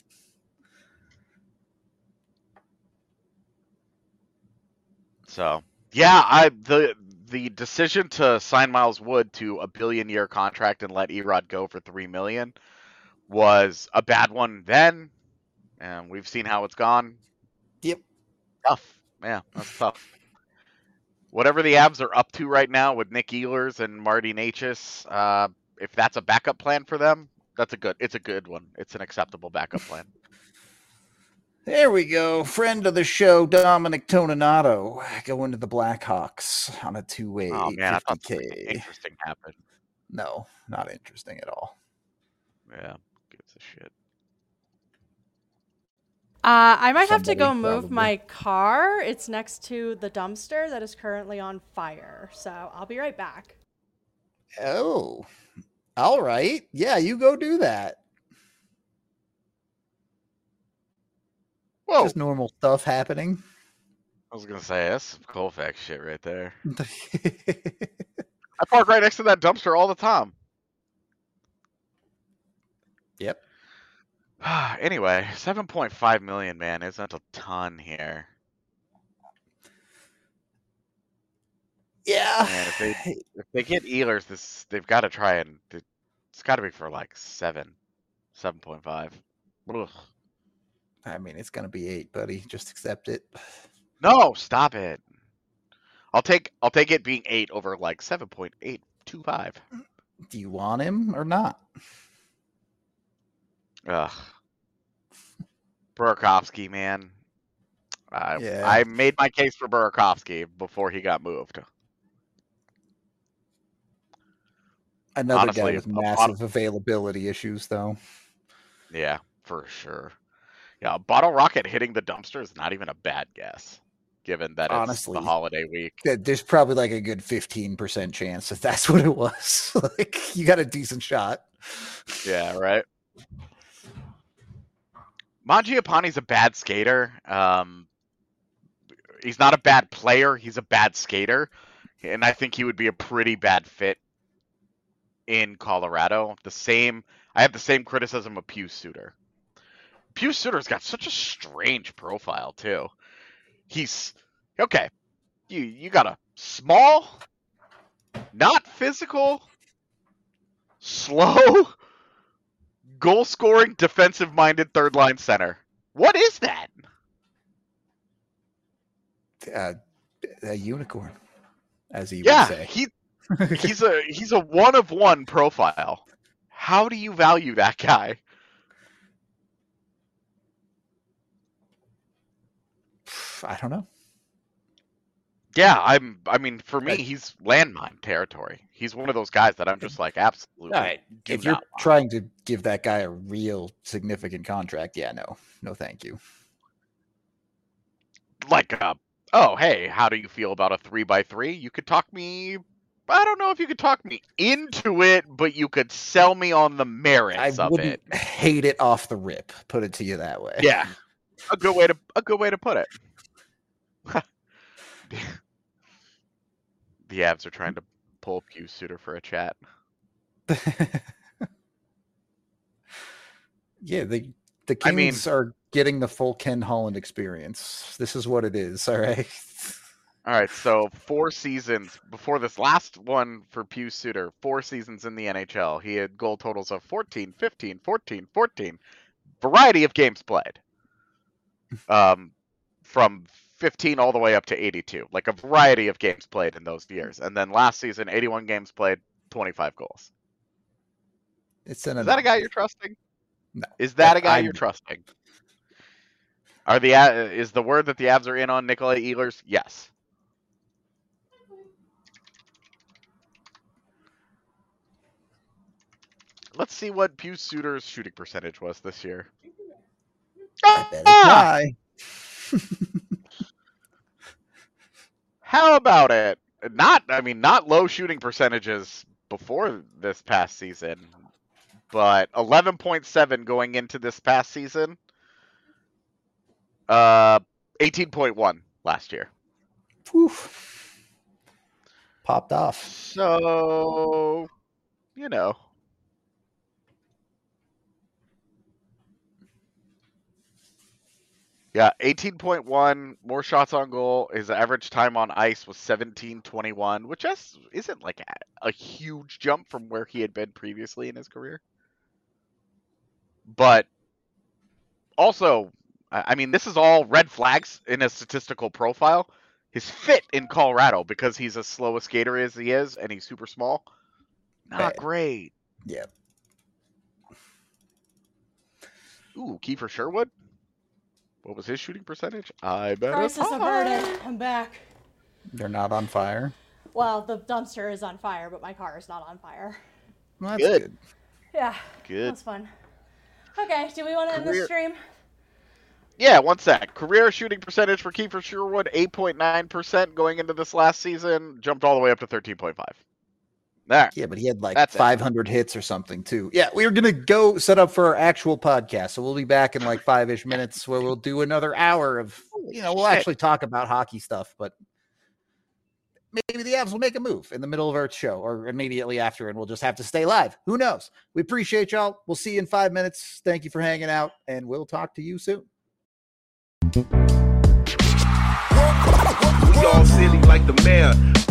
So yeah, I the the decision to sign Miles Wood to a billion year contract and let Erod go for three million was a bad one then, and we've seen how it's gone. Yep. Tough. Yeah, that's tough. Whatever the Avs are up to right now with Nick Ehlers and Marty Necas, uh, if that's a backup plan for them, that's a good. It's a good one. It's an acceptable backup plan. There we go. Friend of the show, Dominic Toninato, going to the Blackhawks on a two-way Oh man, I thought eight fifty something K. interesting happened. No, not interesting at all. Yeah, gives a shit. Uh, I might have to Somebody, go move probably. my car. It's next to the dumpster that is currently on fire. So I'll be right back. Oh, all right. Yeah, you go do that. Whoa! Just normal stuff happening. I was gonna say that's some Colfax shit right there. I park right next to that dumpster all the time. Yep. Anyway, seven point five million, man, isn't a ton here. Yeah. Man, if they if they get Ehlers, this they've got to try and it's got to be for like seven, seven point five. I mean, it's gonna be eight, buddy. Just accept it. No, stop it. I'll take I'll take it being eight over like seven point eight two five. Do you want him or not? Ugh. Burakovsky, man. I Yeah. I made my case for Burakovsky before he got moved. Another Honestly, guy with a lot massive of- availability issues, though. Yeah, for sure. Yeah, Bottle Rocket hitting the dumpster is not even a bad guess, given that it's Honestly, the holiday week. There's probably like a good fifteen percent chance that that's what it was. Like, you got a decent shot. Yeah, right. Mangiapane's a bad skater. Um, he's not a bad player. He's a bad skater, and I think he would be a pretty bad fit in Colorado. The same. I have the same criticism of Pius Suter. Pius Suter's got such a strange profile too. He's okay. You you got a small, not physical, slow, goal scoring, defensive minded third line center. What is that? Uh, a unicorn, as he Yeah, would say. he he's a he's a one of one profile. How do you value that guy? I don't know. Yeah, I'm. I mean, for me, he's landmine territory. He's one of those guys that I'm just like, absolutely. All right. do If you're not want. trying to give that guy a real significant contract, yeah, no, no, thank you. Like, uh, oh, hey, how do you feel about a three by three? You could talk me. I don't know if you could talk me into it, but you could sell me on the merits I of wouldn't it. hate it off the rip. Put it to you that way. Yeah, a good way to a good way to put it. The Avs are trying to pull Pius Suter for a chat. Yeah, the the Kings I mean- are getting the full Ken Holland experience. This is what it is. All right. All right, so four seasons before this last one for Pius Suter, four seasons in the N H L. He had goal totals of fourteen, fifteen, fourteen, fourteen. Variety of games played. Um, from fifteen all the way up to eighty-two. Like a variety of games played in those years. And then last season, eighty-one games played, twenty-five goals. It's an Is that a guy you're trusting? No. Is that a guy I'm- you're trusting? Are the uh, is the word that the Avs are in on Nikolai Ehlers? Yes. Let's see what Pius Suter's shooting percentage was this year. I bet it's Ah! high. How about it? Not, I mean, not low shooting percentages before this past season, but eleven point seven going into this past season. Uh, eighteen point one last year. Whew. popped off. So, you know. Yeah, eighteen point one, more shots on goal. His average time on ice was seventeen twenty-one, which is, isn't like a, a huge jump from where he had been previously in his career. But also, I mean, this is all red flags in a statistical profile. His fit in Colorado, because he's as slow a skater as he is and he's super small, not Bad. great. Yeah. Ooh, Kiefer Sherwood? What was his shooting percentage? I bet Crisis it's high. averted. I'm back. They're not on fire. Well, the dumpster is on fire, but my car is not on fire. Well, that's Good. good. Yeah. Good. That's fun. Okay, do we want to end Career- the stream? Yeah, one sec. Career shooting percentage for Kiefer Sherwood, eight point nine percent going into this last season. Jumped all the way up to thirteen point five. There. Yeah, but he had like That's it. five hundred hits or something too. Yeah, we are going to go set up for our actual podcast. So we'll be back in like five-ish minutes where we'll do another hour of, you know, we'll Shit. actually talk about hockey stuff, but maybe the Avs will make a move in the middle of our show or immediately after, and we'll just have to stay live. Who knows? We appreciate y'all. We'll see you in five minutes. Thank you for hanging out, and we'll talk to you soon. We all silly like the mayor.